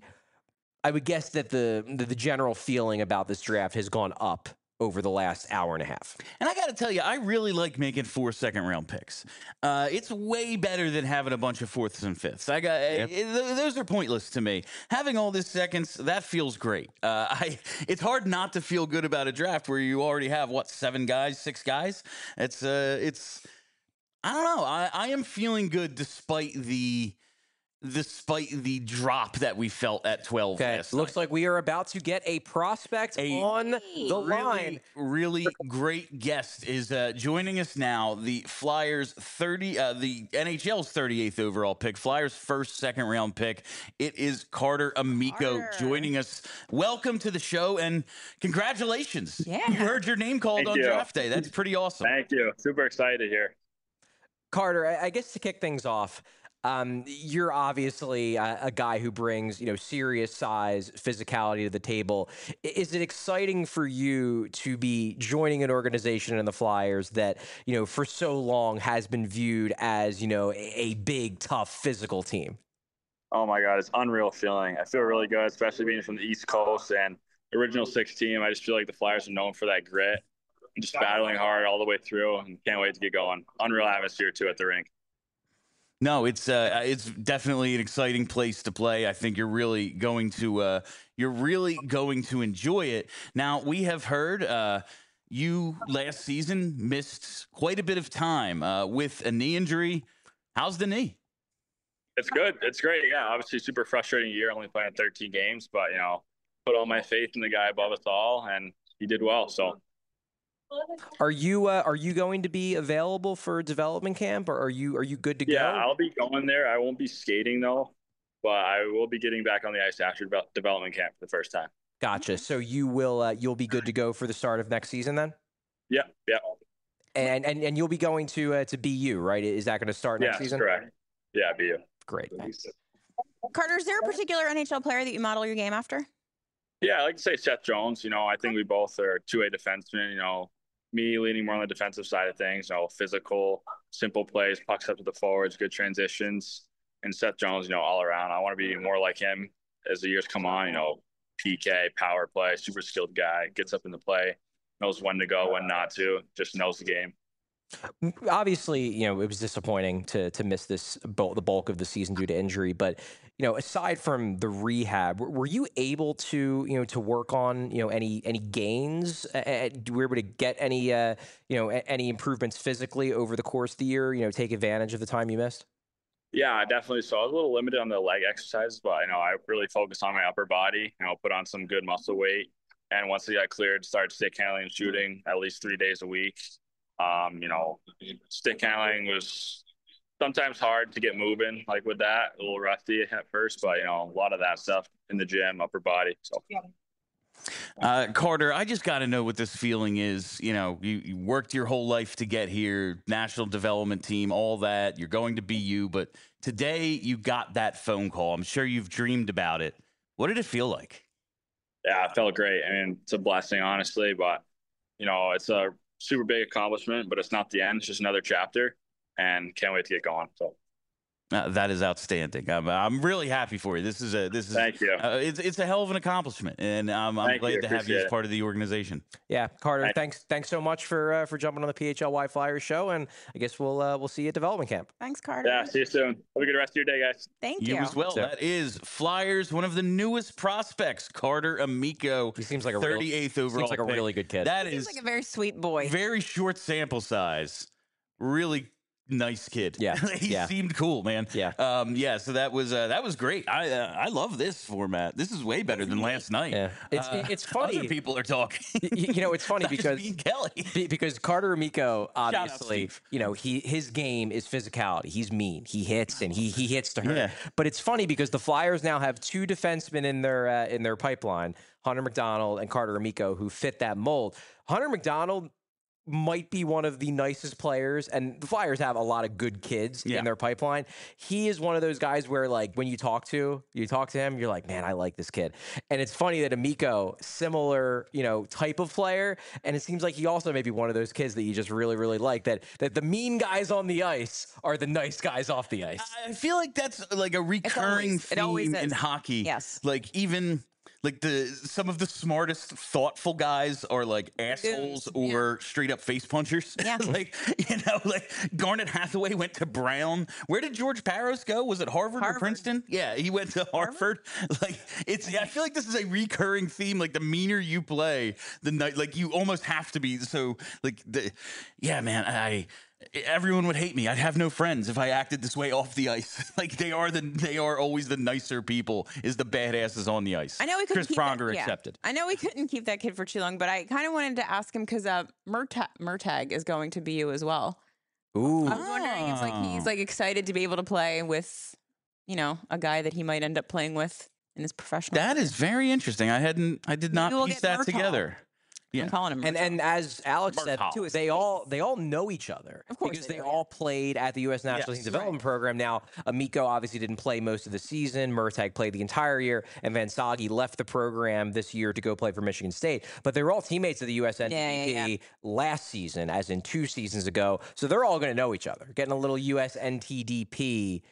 I would guess that the, the the general feeling about this draft has gone up over the last hour and a half. And I got to tell you, I really like making four second round picks. Uh, it's way better than having a bunch of fourths and fifths. I got Yep. it, th- those are pointless to me. Having all this seconds, that feels great. Uh, I it's hard not to feel good about a draft where you already have what seven guys, six guys. It's uh, it's I don't know. I, I am feeling good despite the. Despite the drop that we felt at twelve Okay, last looks night. like we are about to get a prospect A on the line. Really, really great guest is uh, joining us now. The Flyers thirty, uh, the N H L's thirty-eighth overall pick, Flyers first second round pick. It is Carter Amico Carter. joining us. Welcome to the show and congratulations! Yeah. You heard your name called Thank on you. draft day. That's pretty awesome. Thank you. Super excited here. Carter, I I guess to kick things off, um, you're obviously a, a guy who brings, you know, serious size, physicality to the table. I- Is it exciting for you to be joining an organization in the Flyers that, you know, for so long has been viewed as, you know, a, a big, tough, physical team? Oh my God, it's unreal feeling. I feel really good, especially being from the East Coast and original six team. I just feel like the Flyers are known for that grit and just battling hard all the way through, and can't wait to get going. Unreal atmosphere too at the rink. No, it's uh, it's definitely an exciting place to play. I think you're really going to uh, you're really going to enjoy it. Now we have heard uh, you last season missed quite a bit of time uh, with a knee injury. How's the knee? It's good. It's great. Yeah, obviously super frustrating year, only playing thirteen games, but you know, put all my faith in the guy above us all, and he did well. So Are you uh, are you going to be available for development camp, or are you are you good to yeah, go? I'll be going there. I won't be skating though, but I will be getting back on the ice after devel- development camp for the first time. Gotcha. So you will uh, you'll be good to go for the start of next season then, Yeah, yeah, and and and you'll be going to uh, to B U, right? Is that going to start next yeah, season? correct. Yeah, be you. Great. Carter, is there a particular N H L player that you model your game after? Yeah, I like to say Seth Jones. You know, I think we both are two-way defensemen. You know, me leaning more on the defensive side of things. You know, physical, simple plays, pucks up to the forwards, good transitions, and Seth Jones. You know, all around. I want to be more like him as the years come on. You know, P K, power play, super skilled guy, gets up in the play, knows when to go, when not to, just knows the game. Obviously, you know, it was disappointing to to miss this bul- the bulk of the season due to injury, but you know, aside from the rehab, were, were you able to, you know, to work on, you know, any any gains? Uh, were you able to get any, uh, you know, a- any improvements physically over the course of the year? You know, take advantage of the time you missed. Yeah, definitely. So I was a little limited on the leg exercises, but you know, I really focused on my upper body. You know, put on some good muscle weight, and once I got cleared, started stick handling and shooting at least three days a week. Um, you know, stick handling was sometimes hard to get moving, like with that, a little rusty at first, but you know, a lot of that stuff in the gym, upper body. So Uh, Carter, I just got to know what this feeling is. You know, you, you worked your whole life to get here, national development team, all that. You're going to B U, but today you got that phone call. I'm sure you've dreamed about it. What did it feel like? yeah, it felt great. I mean, it's a blessing, honestly, but you know, it's a super big accomplishment, but it's not the end. It's just another chapter, and can't wait to get going. So. Uh, that is outstanding. I'm, I'm really happy for you. This is a this is Thank you. Uh, it's it's a hell of an accomplishment, and um, I'm Thank glad you. to have you as Appreciate it. part of the organization. Yeah, Carter, Thank- thanks thanks so much for uh, for jumping on the P H L Y Flyers show, and I guess we'll uh, we'll see you at development camp. Thanks, Carter. Yeah, see you soon. Have a good rest of your day, guys. Thank You you. as well. So- That is Flyers, one of the newest prospects, Carter Amico. He seems like a real- thirty-eighth overall. Seems like a pick. really good kid. That Seems is like a very sweet boy. very short sample size. Really nice kid. Yeah, he yeah. seemed cool, man. Yeah. Um. Yeah. So that was uh, that was great. I uh, I love this format. This is way better than last night. Yeah. It's Uh, it's funny. Other people are talking. Y- you know, it's funny Besides because me and Kelly. be- because Carter Amico, out, obviously, Steve. you know, he his game is physicality. He's mean. He hits and he he hits to hurt. Yeah. But it's funny because the Flyers now have two defensemen in their uh, in their pipeline, Hunter McDonald and Carter Amico, who fit that mold. Hunter McDonald might be one of the nicest players, and the Flyers have a lot of good kids Yeah. in their pipeline. He is one of those guys where, like, when you talk to you talk to him, you're like, man, I like this kid. And it's funny that Amico, similar, you know, type of player, and it seems like he also may be one of those kids that you just really, really like. That that the mean guys on the ice are the nice guys off the ice. I feel like that's like a recurring always- it always theme in is. hockey. Yes. Like even like the some of the smartest, thoughtful guys are like assholes Goons, or straight up face punchers. Yeah. Like, you know, like Garnet Hathaway went to Brown. Where did George Paros go? Was it Harvard, or Harvard. Princeton? Yeah, he went to Harvard. Like it's I feel like this is a recurring theme. Like the meaner you play, the night like you almost have to be so like the yeah, man, I everyone would hate me. I'd have no friends if I acted this way off the ice. Like they are the they are always the nicer people is the badasses on the ice. I know we couldn't Chris keep Pronger that, yeah. accepted. I know we couldn't keep that kid for too long, but I kind of wanted to ask him because uh, Murta- Murtag is going to B U as well. Ooh, I was wondering if like he's like excited to be able to play with, you know, a guy that he might end up playing with in his professional. That is very interesting. I hadn't I did not Maybe we'll piece get that Murtaugh. together. Yeah. I'm calling him. And Murtaugh. and as Alex said Mark too, Hollis. they all they all know each other. Of course because they they do, all played at the U S National Yes. Team Development Program. Now, Amico obviously didn't play most of the season. Murtag played the entire year, and Van Sagi left the program this year to go play for Michigan State. But they were all teammates of the U S N T D P Yeah, yeah, last season, as in two seasons ago. So they're all going to know each other. Getting a little U S N T D P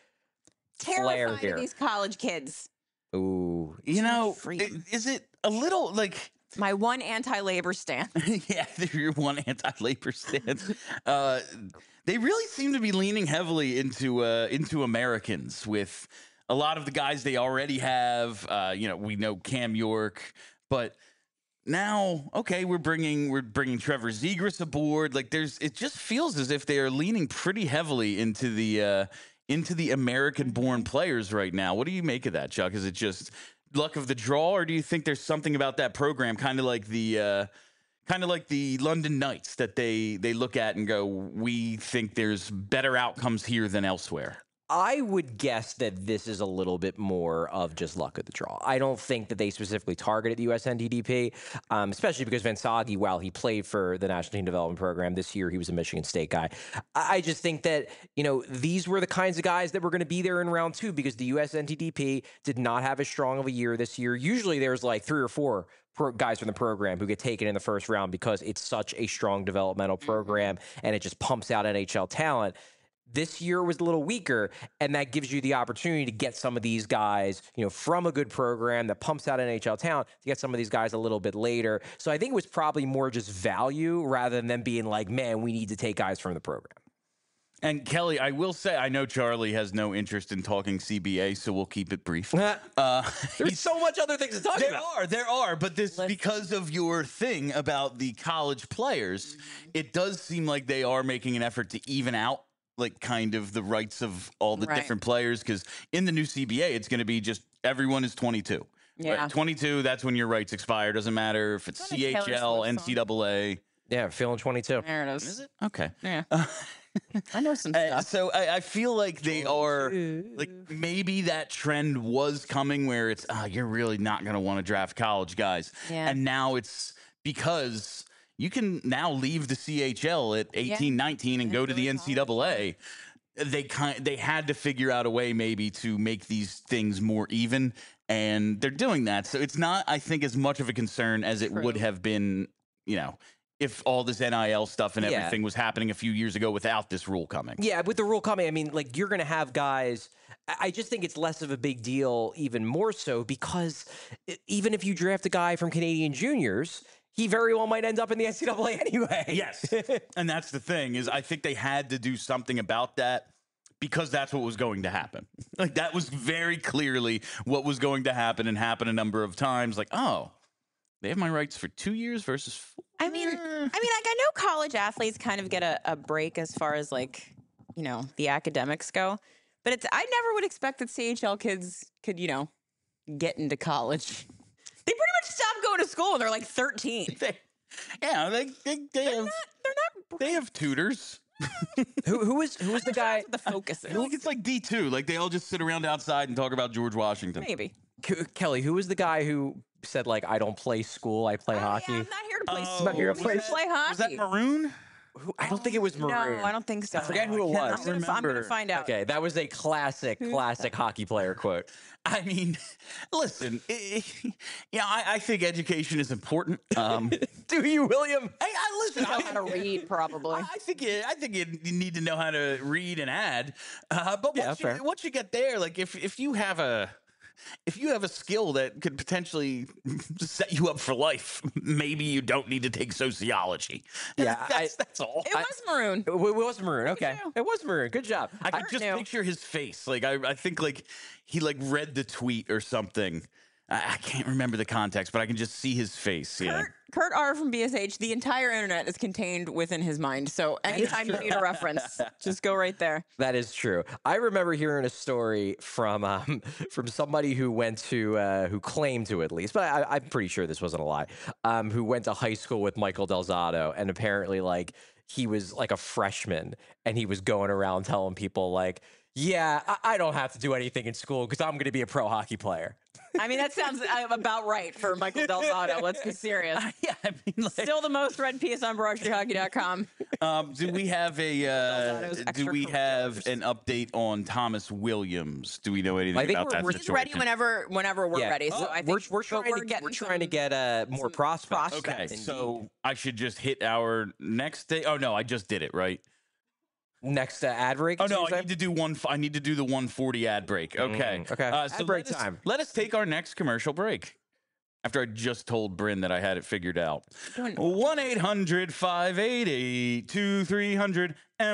flair terrified here. of these college kids. Ooh, You know, freedom. i- is it a little like My one anti-labor stand. Yeah, they're your one anti-labor stand. Uh, they really seem to be leaning heavily into uh, into Americans with a lot of the guys they already have. Uh, you know, we know Cam York, but now, okay, we're bringing we're bringing Trevor Zegras aboard. Like, there's it just feels as if they are leaning pretty heavily into the uh, into the American-born players right now. What do you make of that, Chuck? Is it just luck of the draw, or do you think there's something about that program, kind of like the uh, kind of like the London Knights, that they they look at and go, we think there's better outcomes here than elsewhere? I would guess that this is a little bit more of just luck of the draw. I don't think that they specifically targeted the U S N T D P, um, especially because Vinsagi, while he played for the National Team Development Program this year, he was a Michigan State guy. I I just think that, you know, these were the kinds of guys that were going to be there in round two because the U S N T D P did not have as strong of a year this year. Usually there's like three or four pro- guys from the program who get taken in the first round because it's such a strong developmental program and it just pumps out N H L talent. This year was a little weaker, and that gives you the opportunity to get some of these guys, you know, from a good program that pumps out N H L talent, to get some of these guys a little bit later. So I think it was probably more just value rather than them being like, man, we need to take guys from the program. And Kelly, I will say, I know Charlie has no interest in talking C B A, so we'll keep it brief. Uh, There's so much other things to talk there about. are, there are, but this Listen. because of your thing about the college players, it does seem like they are making an effort to even out, like, kind of the rights of all the Right. different players, because in the new C B A, it's going to be just everyone is twenty-two. Yeah. Right? twenty-two, that's when your rights expire. Doesn't matter if it's It's on a Taylor C H L, Swift N song. C double A. Yeah, feeling twenty-two. There it is. Is it? Okay. Yeah. I know some Uh, stuff. so I, I feel like they are, like, maybe that trend was coming where it's, ah, you're really not going to want to draft college guys. Yeah. And now it's because you can now leave the C H L at eighteen, nineteen and And go go to to the N C double A. They kind they had to figure out a way maybe to make these things more even, and they're doing that. So it's not, I think, as much of a concern as it would True. have been, you know, if all this N I L stuff and Yeah. everything was happening a few years ago without this rule coming. Yeah, with the rule coming, I mean, like, you're going to have guys. I I just think it's less of a big deal, even more so, because e- even if you draft a guy from Canadian juniors, he very well might end up in the N C double A anyway. Yes. And that's the thing, is I think they had to do something about that because that's what was going to happen. Like, that was very clearly what was going to happen, and happen a number of times. Like, oh, they have my rights for two years versus four. I mean, I mean, like, I know college athletes kind of get a, a break as far as, like, you know, the academics go, but it's, I never would expect that C H L kids could, you know, get into college. They pretty much stop going to school when they're like thirteen. They, yeah, they, they, they They're have not, they're not, they have tutors. who who is who is the guy? the focus is. Like, it's like D two. Like, they all just sit around outside and talk about George Washington. Maybe. Ke- Kelly, who was the guy who said, like, I don't play school, I play Oh, hockey? yeah, I'm not here to play Oh, school. not here to I'm play- here to play hockey. Was that Maroon? Who, I don't think it was Maroon. No, I don't think so. I forget who it I cannot was. I'm gonna, I'm gonna remember. find out. Okay, that was a classic, classic hockey player quote. I mean, listen, i- i- yeah, I, I think education is important. Um, Do you, William? I, I listen. Know I, how to read, probably. I think you, I think you you need to know how to read and add. Uh, but Yeah, once, you, fair. once you get there, like, if if you have a if you have a skill that could potentially set you up for life, maybe you don't need to take sociology. Yeah, that's, I- that's all. It was maroon. It wa- was Maroon. Okay, too. it was Maroon. Good job. I could Kurt just knew. picture his face. Like, I, I think like he like read the tweet or something. I, I can't remember the context, but I can just see his face. Yeah. Kurt, Kurt R from B S H, the entire internet is contained within his mind. So anytime you need a reference, just go right there. That is true. I remember hearing a story from um, from somebody who went to uh, who claimed to, at least, but I, I'm pretty sure this wasn't a lie. Um, who went to high school with Michael Delzato, and apparently, like, he was like a freshman, and he was going around telling people, like, "Yeah, I, I don't have to do anything in school because I'm going to be a pro hockey player." I mean, that sounds uh, about right for Michael Delzato. Let's be serious. Yeah, I mean, like, Still the most read piece on broad street hockey dot com. Um, do we have a uh, Delzato's do we have extracurriculars. an update on Thomas Williams? Do we know anything I think about we're- that we're He's situation? ready whenever whenever we're Yeah. ready. So Oh, I think we're, we're but trying to getting we're trying to some- get uh, more some prospects. Okay, prospects. so I should just hit our next day. Oh no, I just did it, right? Next uh, ad break. Oh is no, what I you're need to do one. f- I need to do the one forty ad break. Okay, Mm, okay. Uh, Ad so break let us, time. Let us take our next commercial break. After I just told Bryn that I had it figured out. Don't- one eight hundred five eight eight two three hundred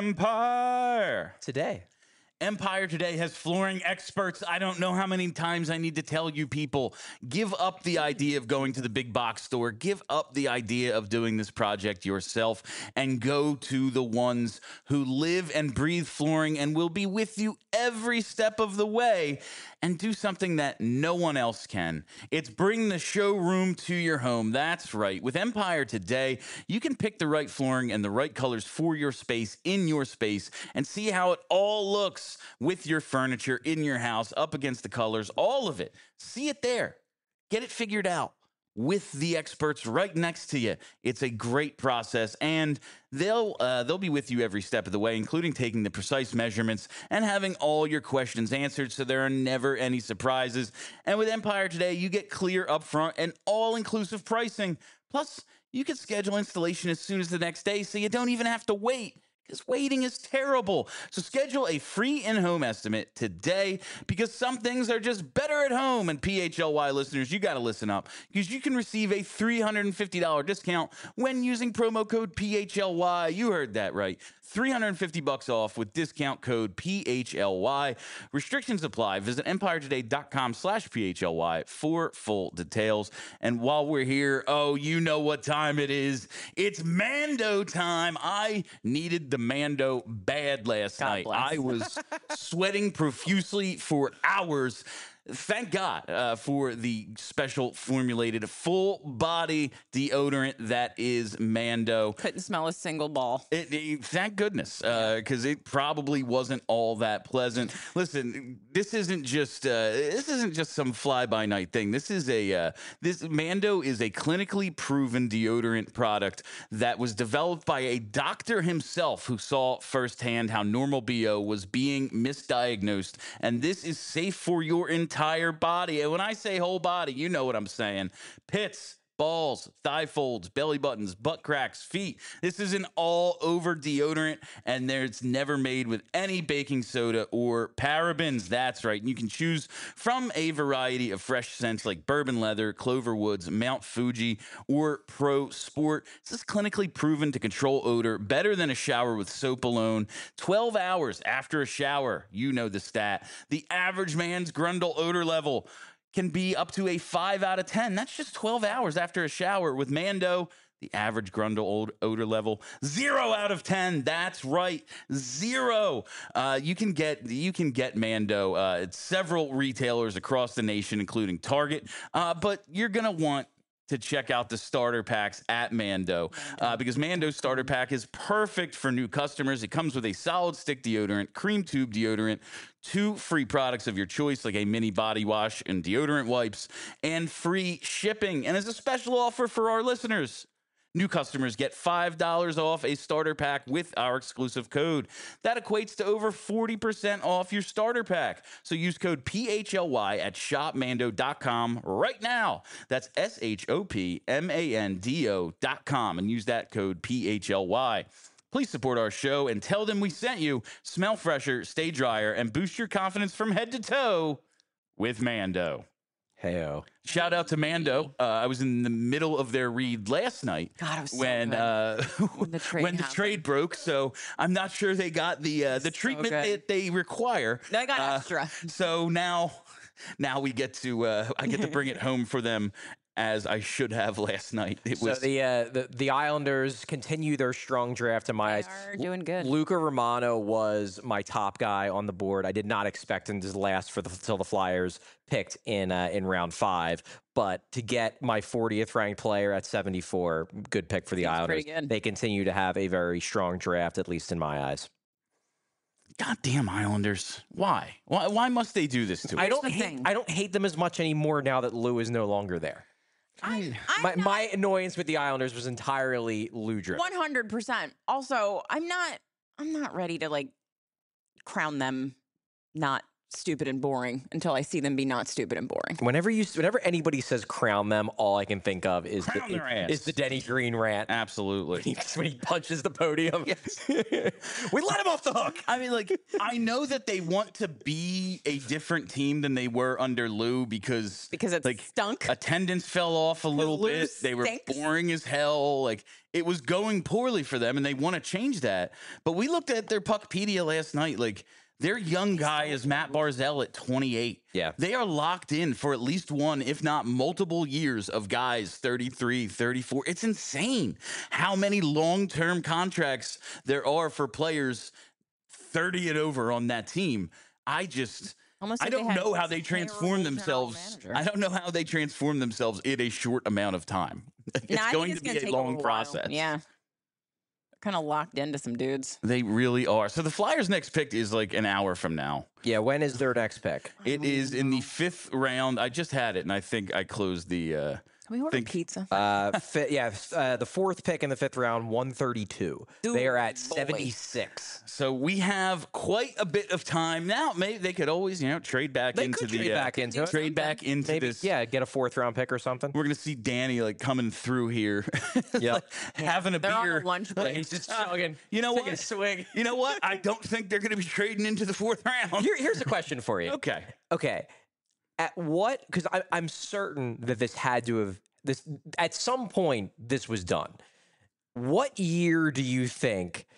Empire. Today. Empire Today has flooring experts. I don't know how many times I need to tell you people, give up the idea of going to the big box store. Give up the idea of doing this project yourself and go to the ones who live and breathe flooring and will be with you every step of the way and do something that no one else can. It's bring the showroom to your home. That's right. With Empire Today, you can pick the right flooring and the right colors for your space in your space and see how it all looks with your furniture in your house, up against the colors, all of it. See it there. Get it figured out with the experts right next to you. It's a great process, and they'll uh, they'll be with you every step of the way, including taking the precise measurements and having all your questions answered, so there are never any surprises. And with Empire Today, you get clear upfront and all-inclusive pricing. Plus, you can schedule installation as soon as the next day, so you don't even have to wait. Because waiting is terrible. So schedule a free in-home estimate today, because some things are just better at home. And P H L Y listeners, you got to listen up, because you can receive a three hundred fifty dollars discount when using promo code P H L Y. You heard that right. three hundred fifty bucks off with discount code P H L Y. Restrictions apply. Visit empiretoday.com slash PHLY for full details. And while we're here, oh, you know what time it is. It's Mando time. I needed the Mando bad last God night. bless. I was sweating profusely for hours. Thank God uh, for the special formulated full body deodorant that is Mando. Couldn't smell a single ball. It, it- thank goodness, because it probably wasn't all that pleasant. Listen, this isn't just uh, this isn't just some fly by night thing. This is a uh, this Mando is a clinically proven deodorant product that was developed by a doctor himself who saw firsthand how normal B O was being misdiagnosed, and this is safe for your entire body. And when I say whole body, you know what I'm saying: pits, balls, thigh folds, belly buttons, butt cracks, feet. This is an all-over deodorant, and there's never made with any baking soda or parabens. That's right. You can choose from a variety of fresh scents like bourbon leather, clover woods, Mount Fuji, or Pro Sport. This is clinically proven to control odor better than a shower with soap alone. twelve hours after a shower, you know the stat, the average man's Grundle odor level can be up to a five out of ten. That's just twelve hours after a shower. With Mando, the average Grundle odor level, zero out of ten. That's right, zero. Uh, you can get you can get Mando uh, at several retailers across the nation, including Target. Uh, but you're gonna want to check out the starter packs at Mando, uh, because Mando's starter pack is perfect for new customers. It comes with a solid stick deodorant, cream tube deodorant, two free products of your choice like a mini body wash and deodorant wipes, and free shipping. And as a special offer for our listeners, new customers get five dollars off a starter pack with our exclusive code. That equates to over forty percent off your starter pack. So use code P H L Y at shop mando dot com right now. That's S H O P M A N D O dot com, and use that code P H L Y. Please support our show and tell them we sent you. Smell fresher, stay drier, and boost your confidence from head to toe with Mando. Heyo. Shout out to Mando. Uh, I was in the middle of their read last night. God, it was so when good. uh, When the trade when the happened. trade broke. So I'm not sure they got the uh, the So treatment good. that they require. No, I got Uh, extra. So now, now we get to uh, I get to bring it home for them, as I should have last night. It So was the, uh, the the Islanders continue their strong draft in my They eyes. are doing good. Luca Romano was my top guy on the board. I did not expect him to last for the till the Flyers picked in uh, in round five, but to get my fortieth ranked player at seventy-four, good pick for the Seems Islanders. pretty good. They continue to have a very strong draft, at least in my eyes. goddamn Islanders. Why? Why? Why must they do this to us? I don't the hate, thing. I don't hate them as much anymore now that Lou is no longer there. I'm, My, I'm my annoyance with the Islanders was entirely Lou driven. one hundred percent. Also, I'm not I'm not ready to like crown them not stupid and boring until I see them be not stupid and boring. Whenever you, whenever anybody says crown them, all I can think of is Crown the, their ass. is the Denny Green rant. Absolutely. When he, when he punches the podium. Yes. We let him off the hook. I mean, like, I know that they want to be a different team than they were under Lou because Because it like stunk. attendance fell off a little Lou bit. They were stinks. boring as hell. Like, it was going poorly for them, and they want to change that. But we looked at their Puckpedia last night. Like, their young guy is Matt Barzell at twenty-eight. Yeah. They are locked in for at least one, if not multiple years of guys thirty-three, thirty-four. It's insane how many long-term contracts there are for players thirty and over on that team. I just, Almost I like they don't had know how they terrible transform general themselves. manager. I don't know how they transform themselves in a short amount of time. It's No, I think going it's to gonna be a take long while. process. Yeah. Kind of locked into some dudes. They really are. So the Flyers' next pick is like an hour from now. Yeah, when is their next pick? It is in the fifth round. I just had it, and I think I closed the. Uh, Can we order think- pizza? Uh, fi- yeah, uh, the fourth pick in the fifth round, one thirty-two. They are at Ooh, boy. seventy-six. So we have quite a bit of time now. Maybe they could always, you know, trade back They into could the trade uh, back into it. trade back into Maybe, this. yeah, get a fourth round pick or something. We're gonna see Danny like coming through here, Yep. like, having a They're on beer. a lunch break. He's just chugging. You know taking what? a swig. You know what? I don't think they're gonna be trading into the fourth round. Here, here's a question for you. Okay. Okay. At what? Because I'm certain that this had to have this at some point. This was done. What year do you think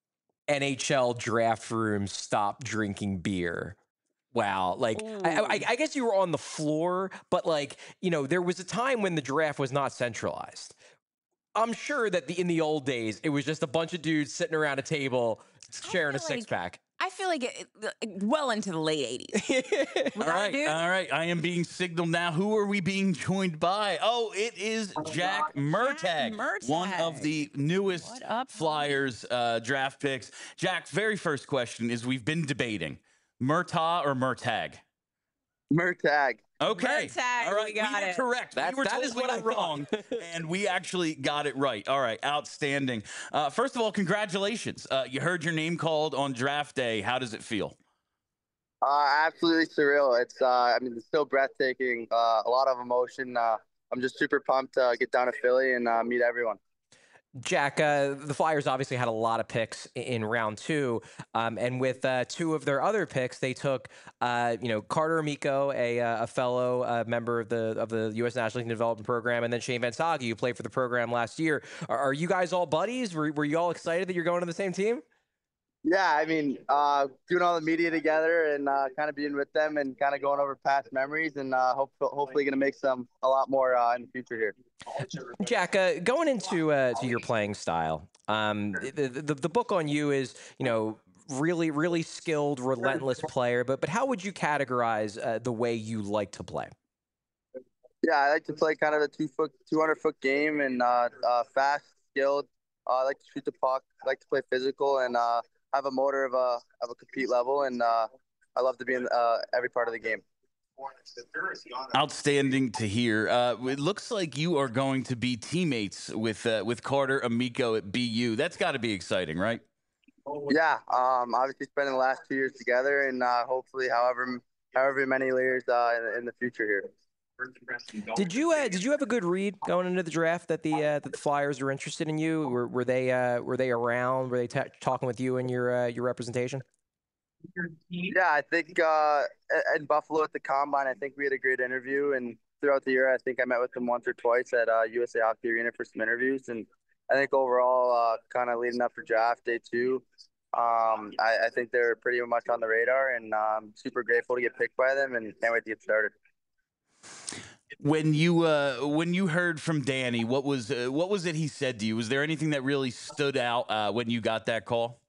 N H L draft rooms stopped drinking beer? Wow, like I, I, I guess you were on the floor, but like you know, there was a time when the draft was not centralized. I'm sure that the in the old days, it was just a bunch of dudes sitting around a table sharing a feel like- six pack. I feel like it, it- well into the late eighties. All right, all right. I am being signaled now. Who are we being joined by? Oh, it is Jack Murtagh, Murtagh. one of the newest What up, Flyers uh, draft picks. Jack, very first question is: we've been debating Murtagh or Murtagh. Murtagh. Okay, Murtagh, all right, we got were it. correct. That- we were that told is we what were I thought. wrong, and we actually got it right. All right, outstanding. Uh, first of all, congratulations. Uh, you heard your name called on draft day. How does it feel? Uh, absolutely surreal. It's, uh, I mean, it's still breathtaking. Uh, a lot of emotion. Uh, I'm just super pumped to get down to Philly and uh, meet everyone. Jack, uh, the Flyers obviously had a lot of picks i- in round two, um, and with uh, two of their other picks, they took, uh, you know, Carter Amico, a, uh, a fellow uh, member of the of the U S National League Development Program, and then Shane Van Sage, who played for the program last year. Are, are you guys all buddies? Were, were you all excited that you're going to the same team? Yeah, I mean, uh, doing all the media together and uh, kind of being with them and kind of going over past memories and uh, hope, hopefully going to make some a lot more uh, in the future here. Jack, uh, going into uh, to your playing style, um, the, the the book on you is, you know, really really skilled, relentless player. But but how would you categorize uh, the way you like to play? Yeah, I like to play kind of a two foot, two hundred foot game and uh, uh, fast, skilled. Uh, I like to shoot the puck. I like to play physical and uh, have a motor of a of a compete level. And uh, I love to be in uh, every part of the game. Outstanding to hear. Uh, it looks like you are going to be teammates with uh, with Carter Amico at B U. That's got to be exciting, right? Yeah, um, obviously spending the last two years together and uh, hopefully however however many years uh, in, in the future here. Did you uh, did you have a good read going into the draft that the uh, that the Flyers were interested in you? Were were they uh, were they around? Were they ta talking with you and your uh, your representation? Yeah, I think uh, in Buffalo at the Combine, I think we had a great interview. And throughout the year, I think I met with them once or twice at uh, U S A Hockey Arena for some interviews. And I think overall, uh, kind of leading up for draft day two, um, I, I think they're pretty much on the radar. And I'm super grateful to get picked by them and can't wait to get started. When you uh, when you heard from Danny, what was uh, what was it he said to you? Was there anything that really stood out uh, when you got that call?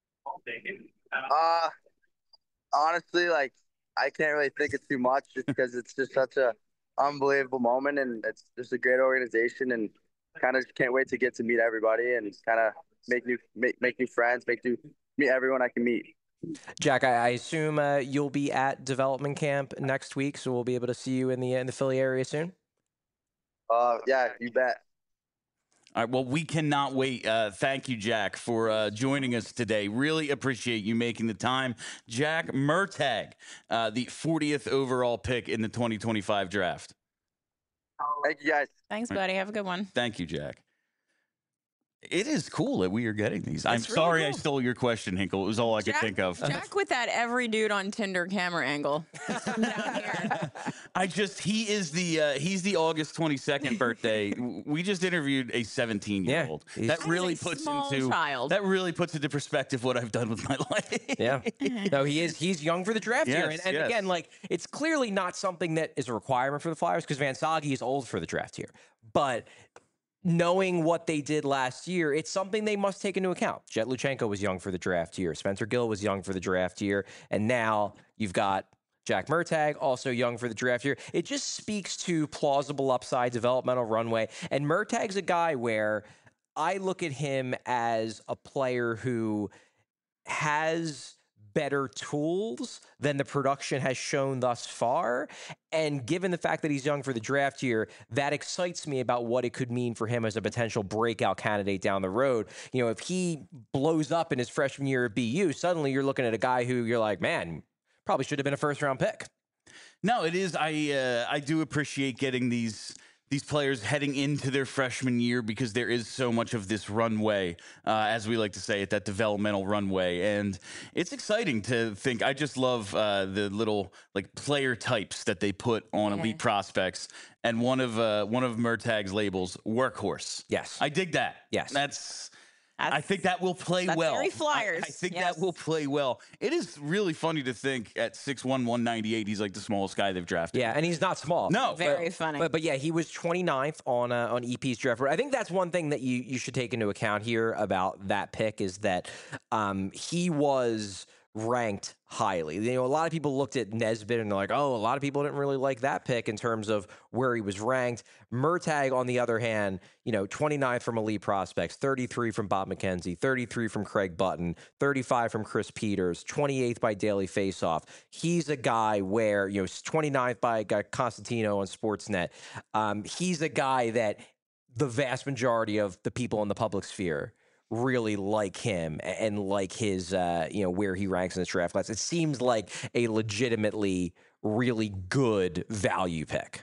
Uh, honestly, like I can't really think of too much just because it's just such a unbelievable moment and it's just a great organization and kind of can't wait to get to meet everybody and kind of make new make, make new friends, make new meet everyone I can meet. Jack, I, I assume uh, you'll be at development camp next week, so we'll be able to see you in the in the Philly area soon. Uh, yeah, you bet. All right, well, we cannot wait. Uh, thank you, Jack, for uh, joining us today. Really appreciate you making the time. Jack Murtagh, uh, the fortieth overall pick in the twenty twenty-five draft. Thank you, guys. Thanks, buddy. Have a good one. Thank you, Jack. It is cool that we are getting these. I'm It's really sorry cool. I stole your question, Hinkle. It was all I Jack, could think of. Jack with that every dude on Tinder camera angle. Down here. I just he is the uh, he's the August twenty-second birthday. We just interviewed a seventeen year old. Yeah, that That really is a puts small into child. that really puts into perspective what I've done with my life. Yeah. No, he is. He's young for the draft here. And, Yes, and yes. again, like, it's clearly not something that is a requirement for the Flyers because Van Sage is old for the draft here. But knowing what they did last year, it's something they must take into account. Jet Luchenko was young for the draft year. Spencer Gill was young for the draft year. And now you've got Jack Murtagh, also young for the draft year. It just speaks to plausible upside, developmental runway. And Murtagh's a guy where I look at him as a player who has better tools than the production has shown thus far. And given the fact that he's young for the draft year, that excites me about what it could mean for him as a potential breakout candidate down the road. You know, if he blows up in his freshman year at B U, suddenly you're looking at a guy who you're like, man, probably should have been a first round pick. No, it is. I uh, I do appreciate getting these these players heading into their freshman year because there is so much of this runway, uh, as we like to say it, that developmental runway, and it's exciting to think. I just love uh, the little like player types that they put on Yeah. elite prospects, and one of uh, one of Murtagh's labels, workhorse. Yes. I dig that. Yes. That's. I That's- think that will play that's well. very I- Flyers, I, think yes. that will play well. It is really funny to think at six one, one ninety-eight, he's like the smallest guy they've drafted. Yeah, and he's not small. No. Very funny. But but yeah, he was twenty-ninth on uh, on E P's draft board. I think that's one thing that you you should take into account here about that pick is that um, he was ranked highly. You know, a lot of people looked at Nesbitt and they're like, oh, a lot of people didn't really like that pick in terms of where he was ranked. Murtagh, on the other hand, you know, twenty-ninth from elite prospects, thirty-three from Bob McKenzie, thirty-three from Craig Button, thirty-five from Chris Peters, twenty-eighth by Daily Faceoff. He's a guy where, you know, twenty-ninth by guy Constantino on Sportsnet. Um, he's a guy that the vast majority of the people in the public sphere really like him and like his, uh, you know, where he ranks in this draft class. It seems like a legitimately really good value pick.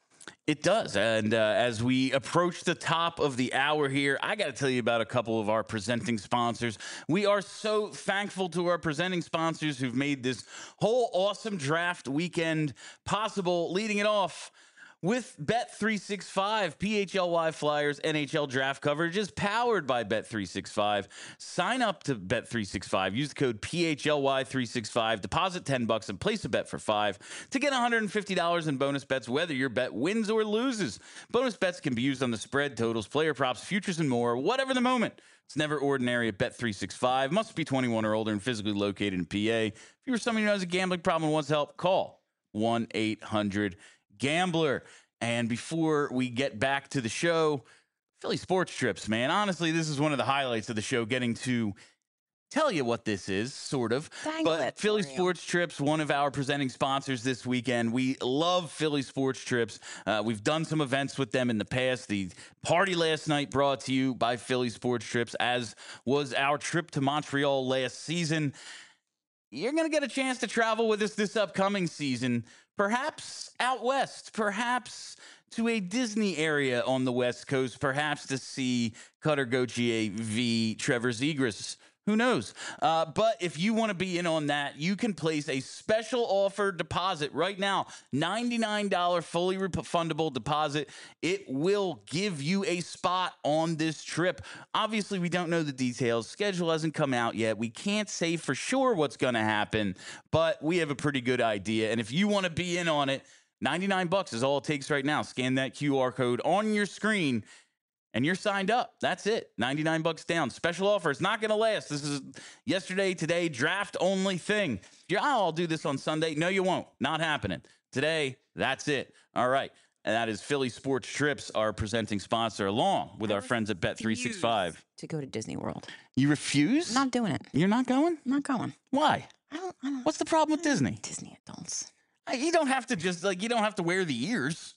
It does. And uh, as we approach the top of the hour here, I got to tell you about a couple of our presenting sponsors. We are so thankful to our presenting sponsors who've made this whole awesome draft weekend possible, leading it off with Bet three sixty-five. P H L Y Flyers N H L draft coverage is powered by Bet three sixty-five. Sign up to Bet three sixty-five. Use the code P H L Y three sixty-five. Deposit ten bucks and place a bet for five to get one hundred fifty dollars in bonus bets, whether your bet wins or loses. Bonus bets can be used on the spread, totals, player props, futures, and more, whatever the moment. It's never ordinary at Bet three sixty-five. Must be twenty-one or older and physically located in P A. If you or somebody who has a gambling problem and wants help, call one eight hundred Gambler. And before we get back to the show, Philly Sports Trips, man. Honestly, this is one of the highlights of the show, getting to tell you what this is, sort of. Dangle But it Philly for you. Sports Trips, one of our presenting sponsors this weekend. We love Philly Sports Trips. Uh, we've done some events with them in the past. The party last night brought to you by Philly Sports Trips, as was our trip to Montreal last season. You're going to get a chance to travel with us this upcoming season, perhaps out west, perhaps to a Disney area on the West Coast, perhaps to see Cutter Gauthier v. Trevor Zegras. Who knows? Uh, but if you want to be in on that, you can place a special offer deposit right now. ninety-nine dollars fully refundable deposit. It will give you a spot on this trip. Obviously, we don't know the details. Schedule hasn't come out yet. We can't say for sure what's going to happen, but we have a pretty good idea. And if you want to be in on it, ninety-nine bucks is all it takes right now. Scan that Q R code on your screen and you're signed up. That's it. ninety-nine bucks down. Special offer. It's not going to last. This is yesterday, today, draft only thing. You're, oh, I'll do this on Sunday. No, you won't. Not happening. Today, that's it. All right. And that is Philly Sports Trips, our presenting sponsor, along with I our friends at Bet three sixty-five. To go to Disney World. You refuse? I'm not doing it. You're not going? I'm not going. Why? I don't, I don't What's the problem with Disney? Disney adults. Uh, You don't have to just, like, you don't have to wear the ears.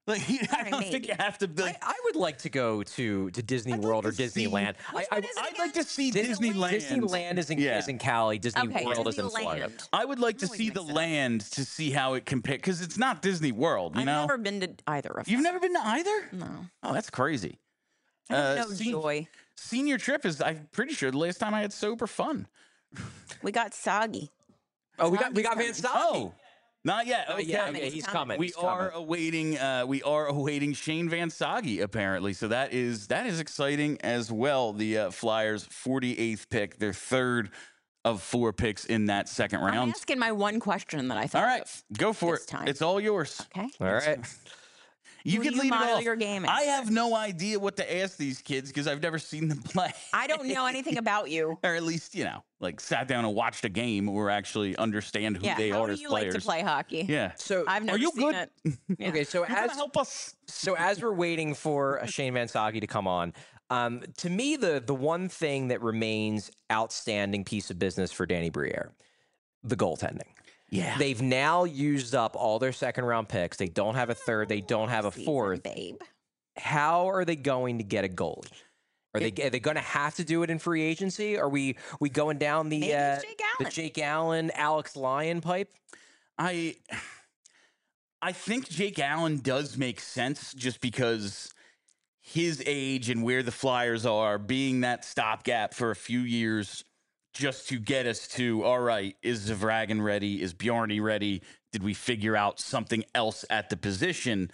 Like, I don't Maybe. think you have to. Like, I, I would like to go to to Disney I'd World like or to see- Disneyland. Which I, one is it I'd like to see Disneyland. Disneyland. Disneyland is in, Yeah. is in Cali. Disney Okay, World is in Florida. Disneyland. I would like to I'm always see the mixing up. land to see how it compares, because it's not Disney World. You I've know, never been to either of them. you've never been to either. No. Oh, that's crazy. I don't Uh, know sen- joy. Senior trip is, I'm pretty sure, the last time I had sober fun. We got soggy. Oh, we got we got Coming. Van Soggy. Oh, not yet. Oh, Okay. yeah, coming, okay, it's he's coming. coming. We he's are coming. awaiting. Uh, we are awaiting Shane Van Soggy apparently. So that is that is exciting as well. The uh, Flyers' forty-eighth pick, their third of four picks in that second I'm round. asking my one question that I thought All right, of. go for this it. time. It's all yours. Okay. All right. You Who can do you lead it model off. your game I after? have no idea what to ask these kids because I've never seen them play. I don't know anything about you. Or at least, you know, like sat down and watched a game or actually understand who Yeah. they How are do as you players. like to play hockey? Yeah. So I've never you seen good? it. Yeah. okay, so You gotta as help us. so as we're waiting for Shane Van Soggy to come on, um, to me the the one thing that remains outstanding piece of business for Danny Briere, the goaltending. Yeah. They've now used up all their second round picks. They don't have a third. They don't have a Season, fourth. babe. How are they going to get a goalie? Are they are they going to have to do it in free agency? Are we we going down the Maybe uh, it's Jake the Allen. Jake Allen, Alex Lyon pipe? I I think Jake Allen does make sense just because his age and where the Flyers are, being that stopgap for a few years just to get us to, all right, is Zvragin ready? Is Bjarny ready? Did we figure out something else at the position?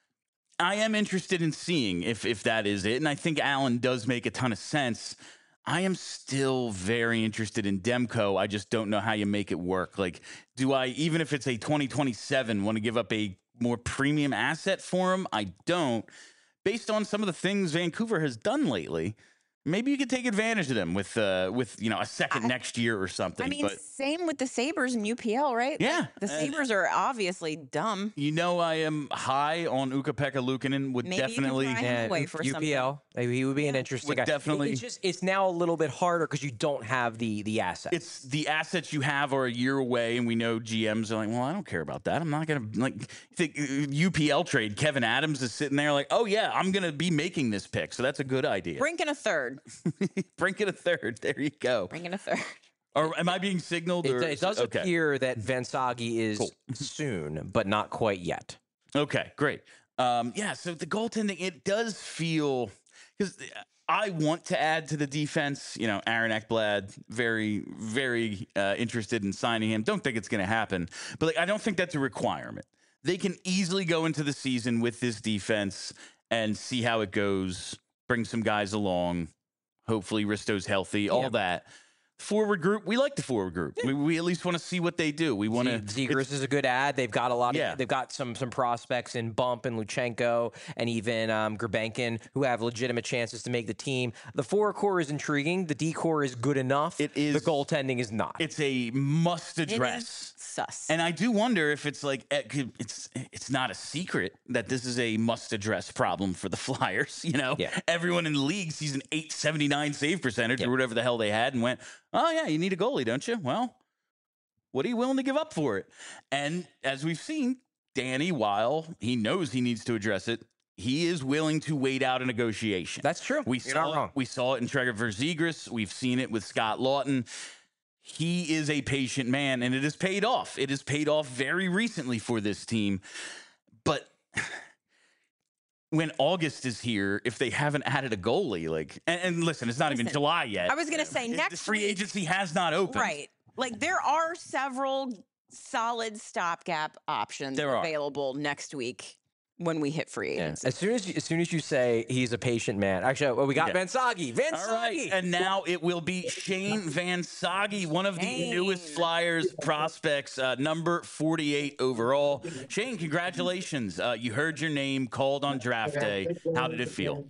I am interested in seeing if if that is it. And I think Allen does make a ton of sense. I am still very interested in Demko. I just don't know how you make it work. Like, do I, even if it's a twenty twenty-seven, want to give up a more premium asset for him? I don't. Based on some of the things Vancouver has done lately, maybe you could take advantage of them with, uh, with you know, a second I- next year or something. I mean, but same with the Sabres and U P L, right? Yeah, Like, the uh, Sabres are obviously dumb. you know, I am high on Ukko-Pekka Luukkonen. Would Maybe you can definitely. try him away for U P L, maybe he would be an Yeah. interesting Would guy. definitely- It's just it's now a little bit harder because you don't have the the assets. It's the assets you have are a year away, and we know G Ms are like, well, I don't care about that. I'm not going to, like, think uh, U P L trade. Kevin Adams is sitting there like, oh, yeah, I'm going to be making this pick. So that's a good idea. Brink in a third. Brink it a third. There you go. Brink in a third. Or am I being signaled? it, Or, it does okay. appear that Van Soggy is Cool. soon, but not quite yet. Okay, great. Um, yeah, so the goaltending, it does feel, because I want to add to the defense. You know, Aaron Ekblad, very, very uh, interested in signing him. Don't think it's going to happen, but like, I don't think that's a requirement. They can easily go into the season with this defense and see how it goes, bring some guys along. Hopefully Risto's healthy, all Yeah. that. Forward group, we like the forward group. We, we at least want to see what they do. We want to. Zegers is a good ad. They've got a lot of Yeah. they've got some some prospects in Bump and Luchenko and even um, Gerbenkin who have legitimate chances to make the team. The forward core is intriguing. The D core is good enough. It is- The goaltending is not. It's a must It address. is sus. And I do wonder if it's like it could- it's it's not a secret that this is a must address problem for the Flyers. You know, Yeah. everyone in the league sees an eight seventy-nine save percentage Yeah. or whatever the hell they had and went, oh yeah, you need a goalie, don't you? Well, what are you willing to give up for it? And as we've seen, Danny, while he knows he needs to address it, he is willing to wait out a negotiation. That's true. We You're saw not it, wrong. we saw it in Trevor Zegras. We've seen it with Scott Lawton. He is a patient man, and it has paid off. It has paid off very recently for this team. But when August is here, if they haven't added a goalie, like, and, and listen, it's not even Listen, July yet. I was gonna say, The next free week- agency has not opened. Right. Like, there are several solid stopgap options There are. available next week when we hit free Yeah. agency. As soon as you, as soon as you say he's a patient man, actually, well, we got Yeah. Van Soggy. Van All right, Soggy. and now it will be Shane Van Soggy, one of the Shane. newest Flyers prospects, uh, number forty-eight overall. Shane, congratulations! Uh, you heard your name called on draft day. How did it feel?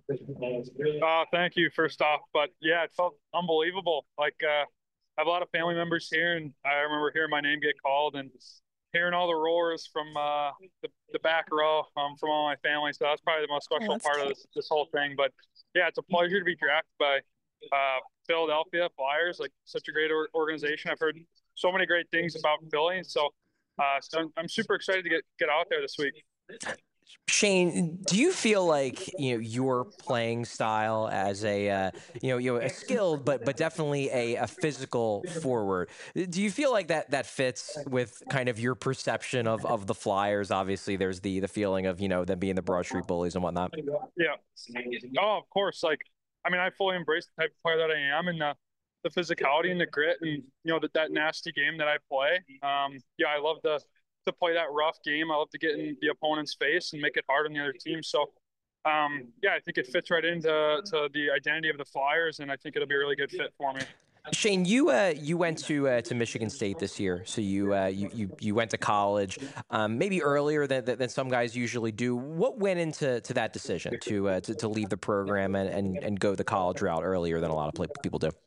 Uh, thank you, first off. But yeah, it felt unbelievable. Like, uh, I have a lot of family members here, and I remember hearing my name get called and hearing all the roars from uh, the, the back row um, from all my family. So that's probably the most special that's part of this, this whole thing. But yeah, it's a pleasure to be drafted by uh, Philadelphia Flyers, like such a great or- organization. I've heard so many great things about Philly. So, uh, so I'm, I'm super excited to get, get out there this week. Shane, do you feel like you know your playing style as a uh, you know you know a skilled but but definitely a, a physical forward? Do you feel like that that fits with kind of your perception of of the Flyers? Obviously, there's the the feeling of you know them being the Broad Street bullies and whatnot. Yeah. Oh, of course. Like, I mean, I fully embrace the type of player that I am, and the the physicality and the grit, and you know that that nasty game that I play. Um, yeah, I love to to play that rough game. I love to get in the opponent's face and make it hard on the other team. So, um, yeah, I think it fits right into to the identity of the Flyers, and I think it'll be a really good fit for me. Shane, you uh, you went to uh, to Michigan State this year, so you uh, you, you you went to college, um, maybe earlier than, than some guys usually do. What went into to that decision to uh, to, to leave the program and, and, and go the college route earlier than a lot of play, people do?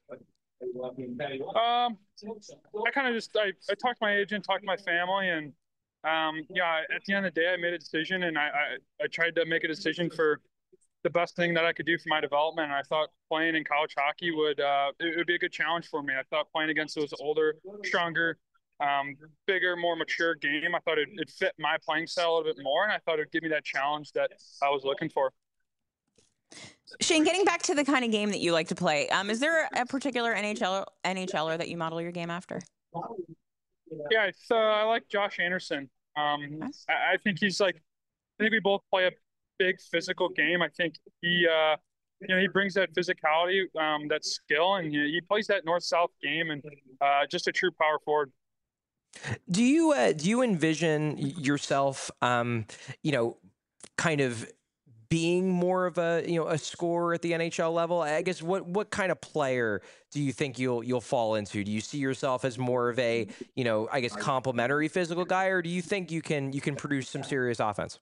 Um, I kind of just I, I talked to my agent, talked to my family, and um, yeah, at the end of the day, I made a decision, and I, I I tried to make a decision for the best thing that I could do for my development. And I thought playing in college hockey would uh, it would be a good challenge for me. I thought playing against those older, stronger, um, bigger, more mature game. I thought it it fit my playing style a little bit more, and I thought it would give me that challenge that I was looking for. Shane, getting back to the kind of game that you like to play, um, is there a particular N H L NHLer that you model your game after? Yeah, so I like Josh Anderson. Um, Nice. I, I think he's like I think we both play a big physical game. I think he, uh, you know, he brings that physicality, um, that skill, and he, he plays that north-south game, and uh, just a true power forward. Do you uh, do you envision yourself, um, you know, kind of being more of a you know a scorer at the N H L level? I guess what what kind of player do you think you'll you'll fall into? Do you see yourself as more of a you know I guess complementary physical guy, or do you think you can you can produce some serious offense?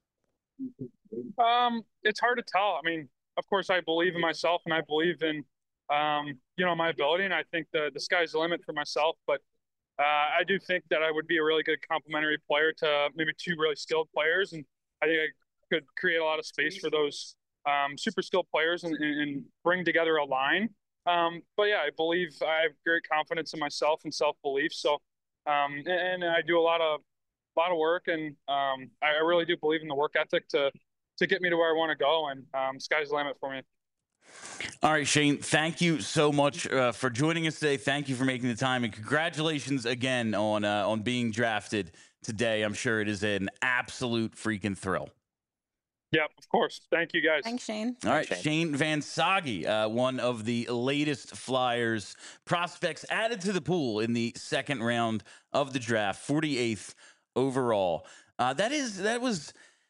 Um, it's hard to tell. I mean, of course, I believe in myself, and I believe in, um, you know, my ability, and I think the the sky's the limit for myself. But uh, I do think that I would be a really good complementary player to maybe two really skilled players, and I think I could create a lot of space for those um, super skilled players and, and bring together a line. Um, but yeah, I believe I have great confidence in myself and self belief. So, um, and, and I do a lot of a lot of work, and um, I, I really do believe in the work ethic to to get me to where I want to go. And um, sky's the limit for me. All right, Shane, thank you so much uh, for joining us today. Thank you for making the time, and congratulations again on uh, on being drafted today. I'm sure it is an absolute freaking thrill. Yep, of course. Thank you, guys. Thanks, Shane. All right, Shane. Shane Van Sage, uh, one of the latest Flyers prospects added to the pool in the second round of the draft, forty-eighth overall. Uh, that is that was.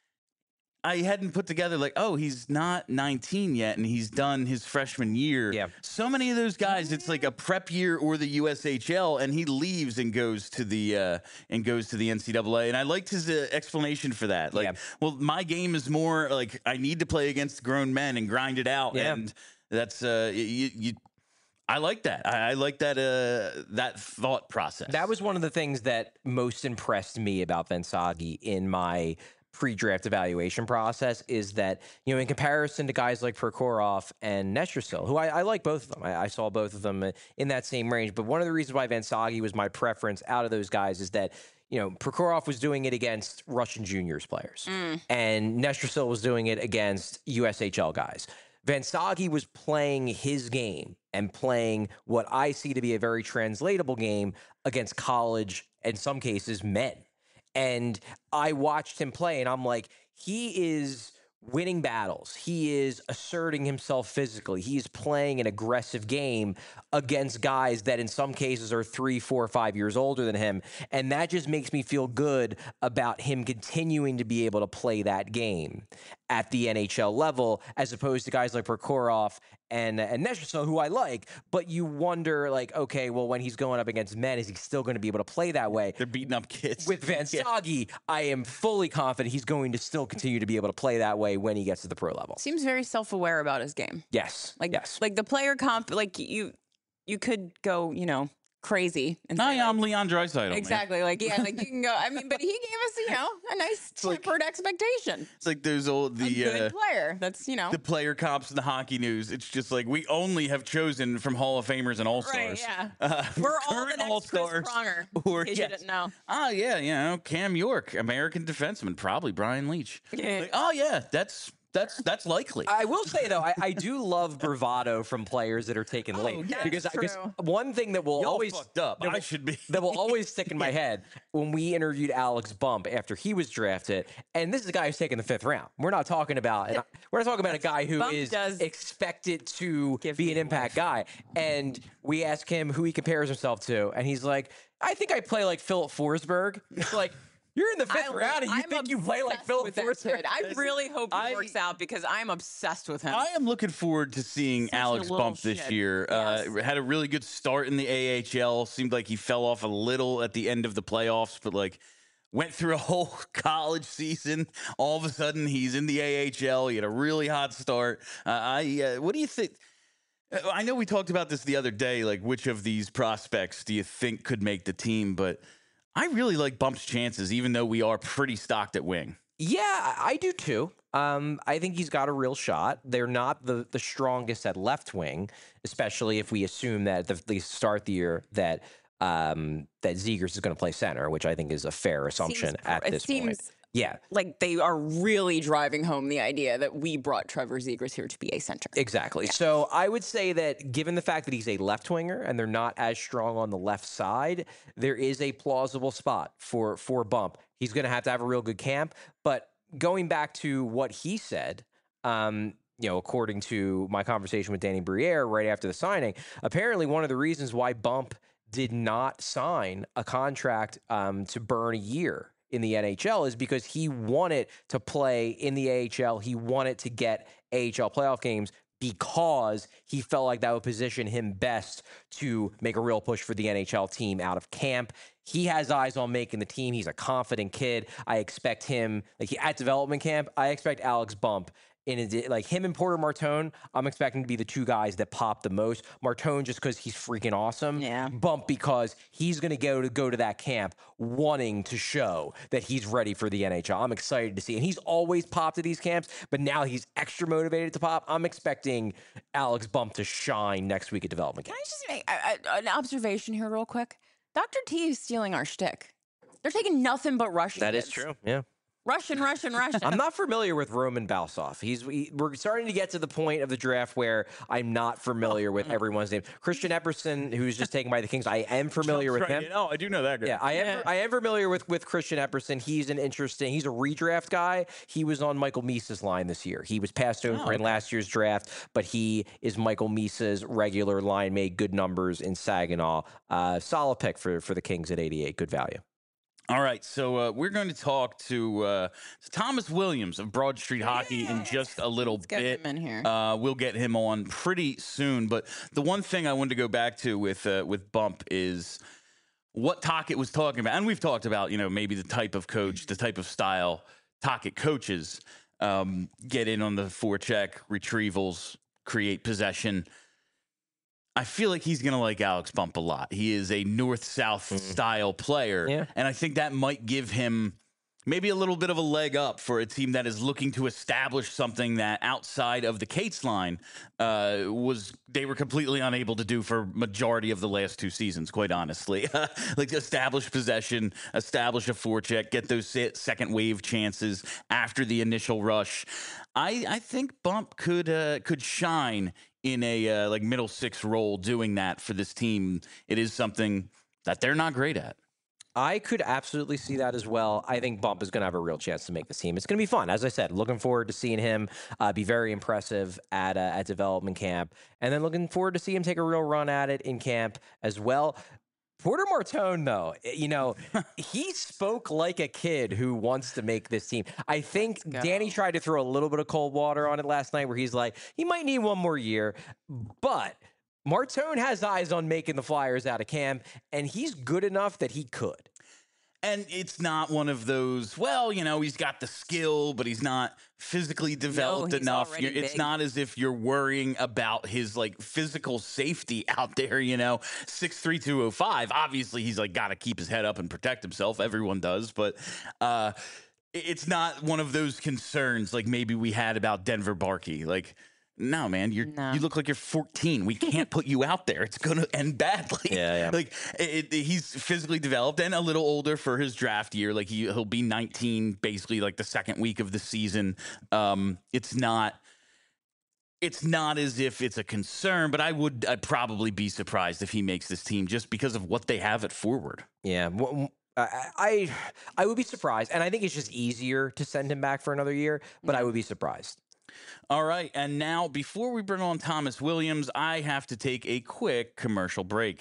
I hadn't put together like, oh, he's not nineteen yet, and he's done his freshman year. Yeah. So many of those guys, it's like a prep year or the U S H L, and he leaves and goes to the uh, and goes to the N C double A. And I liked his uh, explanation for that. Like, Yeah. well, my game is more like I need to play against grown men and grind it out, Yeah. and that's uh, you. you I like that. I, I like that uh, that thought process. That was one of the things that most impressed me about Vensagi in my pre-draft evaluation process is that, you know, in comparison to guys like Prokhorov and Nestrasil, who I, I like both of them. I, I saw both of them in that same range. But one of the reasons why Vensagi was my preference out of those guys is that, you know, Prokhorov was doing it against Russian juniors players, Mm. and Nestrasil was doing it against U S H L guys. Vensagi was playing his game and playing what I see to be a very translatable game against college, in some cases, men. And I watched him play, and I'm like, he is winning battles. He is asserting himself physically. He is playing an aggressive game against guys that in some cases are three, four, five years older than him. And that just makes me feel good about him continuing to be able to play that game at the N H L level, as opposed to guys like Prokhorov and and Nestrasil, who I like. But you wonder, like, okay, well, when he's going up against men, is he still going to be able to play that way? They're beating up kids. With Vensagi, I am fully confident he's going to still continue to be able to play that way when he gets to the pro level. Seems very self-aware about his game. Yes, Like, yes, like the player comp, like you, you could go, you know, crazy. And No, say, yeah, like, I'm Leon Draisaitl. exactly. Man. Like, yeah, like you can go. I mean, but he gave us, you know, a nice like- tempered expectation. It's like there's old the a good uh, player. That's, you know. the player comps in the hockey news. It's just like we only have chosen from Hall of Famers and All Stars. Right, yeah. Uh, We're all the current next All-Stars, Chris Pronger, or in case yes. you didn't know. Oh yeah, you know Cam York, American defenseman, probably Brian Leach. Yeah. Like, oh yeah, that's that's that's likely. I will say though, I, I do love bravado from players that are taken Oh, late yeah. because That's because true. one thing that will Y'all always fucked up. that I will- should be. that will always stick in my head when we interviewed Alex Bump after he was drafted, and this is a guy who's taken the fifth round. We're not talking about and we're not talking about a guy who Bump is does expected to give be an me impact guy. And we ask him who he compares himself to, and he's like, "I think I play like Philip Forsberg." It's like. You're in the fifth I- round, and you I'm think you play like obsessed Philip with that Forsberg? kid. I really hope he I- works out because I'm obsessed with him. I am looking forward to seeing Such a Alex little Bump this shit. year. Uh, Yes. had a really good start in the A H L. Seemed like he fell off a little at the end of the playoffs, but like went through a whole college season. All of a sudden, he's in the A H L. He had a really hot start. Uh, I uh, what do you think? uh, I know we talked about this the other day. Like, which of these prospects do you think could make the team? But I really like Bump's chances, even though we are pretty stocked at wing. Yeah, I I do too. Um, I think he's got a real shot. They're not the the strongest at left wing, especially if we assume that at the, the start the year that um, that Zegers is going to play center, which I think is a fair assumption Seems- at it this seems point. Yeah, like they are really driving home the idea that we brought Trevor Zegers here to be a center. exactly. So I would say that given the fact that he's a left winger and they're not as strong on the left side, there is a plausible spot for for Bump. He's going to have to have a real good camp. But going back to what he said, um, you know, according to my conversation with Danny Briere right after the signing, apparently one of the reasons why Bump did not sign a contract um, to burn a year in the N H L is because he wanted to play in the A H L. He wanted to get A H L playoff games because he felt like that would position him best to make a real push for the N H L team out of camp. He has eyes on making the team. He's a confident kid. I expect him, like he, at development camp, I expect Alex Bump in a, like him and Porter Martone, I'm expecting to be the two guys that pop the most. Martone just because he's freaking awesome. Yeah. Bump because he's going to go to go to that camp wanting to show that he's ready for the N H L. I'm excited to see, and he's always popped at these camps, but now he's extra motivated to pop. I'm expecting Alex Bump to shine next week at development Can camp. I just make I, I, an observation here, real quick? Doctor T is stealing our shtick. They're taking nothing but Russian. That is kids. true. Yeah. Russian, Russian, Russian. I'm not familiar with Roman Balsov. He's he, we're starting to get to the point of the draft where I'm not familiar with everyone's name. Christian Epperson, who's just taken by the Kings, I am familiar with him. Oh, I do know that guy. Yeah, I am. Yeah. I am familiar with with Christian Epperson. He's an interesting. He's a redraft guy. He was on Michael Misa's line this year. He was passed over Oh, in okay. last year's draft, but he is Michael Misa's regular line. Made good numbers in Saginaw. Uh, solid pick for for the Kings at eighty-eight. Good value. All right, so uh, we're going to talk to uh, Thomas Williams of Broad Street Hockey in just a little Let's get bit. him in here. Uh, we'll get him on pretty soon. But the one thing I wanted to go back to with uh, with Bump is what Tocchet was talking about, and we've talked about, you know, maybe the type of coach, the type of style Tocchet coaches um, get in on the forecheck, retrievals, create possession. I feel like he's going to like Alex Bump a lot. He is a north-south style player. Yeah. And I think that might give him maybe a little bit of a leg up for a team that is looking to establish something that outside of the Cates line uh, was they were completely unable to do for majority of the last two seasons, quite honestly. Like establish possession, establish a forecheck, get those se- second wave chances after the initial rush. I, I think Bump could uh, could shine in a uh, like middle six role doing that for this team. It is something that they're not great at. I could absolutely see that as well. I think Bump is going to have a real chance to make the team. It's going to be fun. As I said, looking forward to seeing him uh, be very impressive at uh, at development camp, and then looking forward to see him take a real run at it in camp as well. Porter Martone, though, you know, he spoke like a kid who wants to make this team. I think go. Danny tried to throw a little bit of cold water on it last night where he's like, he might need one more year, but Martone has eyes on making the Flyers out of camp, and he's good enough that he could. And it's not one of those, well, you know, he's got the skill, but he's not physically developed he's enough. already You're- It's big. not as if you're worrying about his like physical safety out there, you know, six three, two oh five. Obviously, he's like got to keep his head up and protect himself. Everyone does. But uh, it- it's not one of those concerns like maybe we had about Denver Barkey. Like, no, man, you're No. you look like you're fourteen. We can't put you out there. It's going to end badly. Yeah, yeah. Like it, it- he's physically developed and a little older for his draft year. Like he he'll be nineteen, basically like the second week of the season. Um, it's not. It's not as if it's a concern, but I would I'd probably be surprised if he makes this team just because of what they have at forward. Yeah. w- I, I I would be surprised, and I think it's just easier to send him back for another year. But I would be surprised. All right, and now before we bring on Thomas Williams, I have to take a quick commercial break.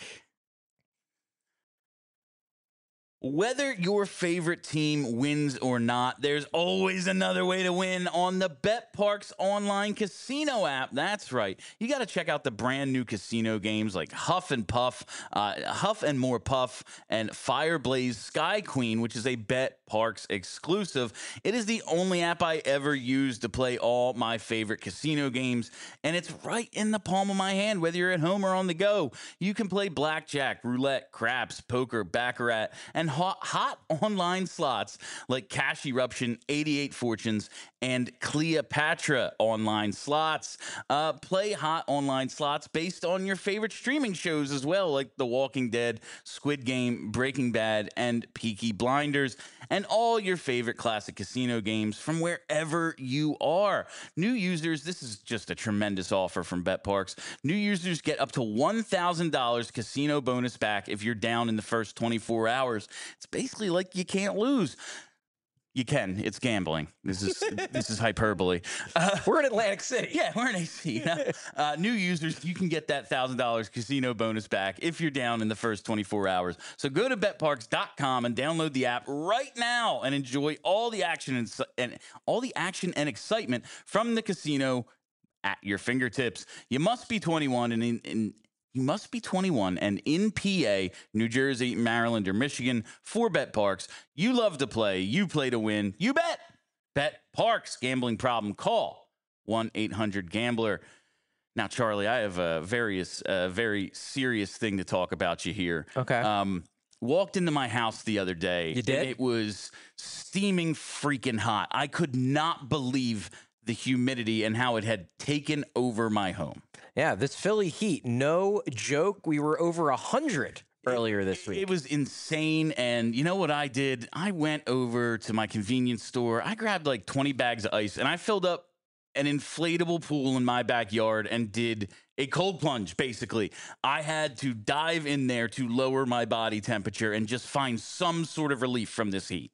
Whether your favorite team wins or not, there's always another way to win on the BetParx online casino app. That's right. You got to check out the brand new casino games like Huff and Puff, uh, Huff and More Puff, and Fireblaze Sky Queen, which is a BetParx exclusive. It is the only app I ever used to play all my favorite casino games, and it's right in the palm of my hand, whether you're at home or on the go. You can play blackjack, roulette, craps, poker, baccarat, and hot, hot online slots like Cash Eruption, eighty-eight Fortunes, and Cleopatra online slots. Uh, play hot online slots based on your favorite streaming shows as well, like The Walking Dead, Squid Game, Breaking Bad, and Peaky Blinders, and all your favorite classic casino games from wherever you are. New users, this is just a tremendous offer from BetParx. New users get up to one thousand dollars casino bonus back if you're down in the first twenty-four hours. It's basically like you can't lose. You can. It's gambling. This is this is hyperbole. Uh, We're in Atlantic City. yeah, we're in A C. You know? uh, new users, you can get that one thousand dollars casino bonus back if you're down in the first twenty-four hours. So go to bet parx dot com and download the app right now and enjoy all the action and, and all the action and excitement from the casino at your fingertips. You must be twenty-one and in, in You must be twenty-one and in P A, New Jersey, Maryland, or Michigan for BetParx. You love to play. You play to win. You bet. BetParx. Gambling problem? Call one eight hundred gambler. Now, Charlie, I have a various, uh, very serious thing to talk about you here. Okay. Um, walked into my house the other day. You did? And it was steaming freaking hot. I could not believe the humidity and how it had taken over my home. Yeah, this Philly heat, no joke. We were over a hundred earlier this week. It was insane. And you know what I did? I went over to my convenience store. I grabbed like twenty bags of ice and I filled up an inflatable pool in my backyard and did a cold plunge, basically. I had to dive in there to lower my body temperature and just find some sort of relief from this heat.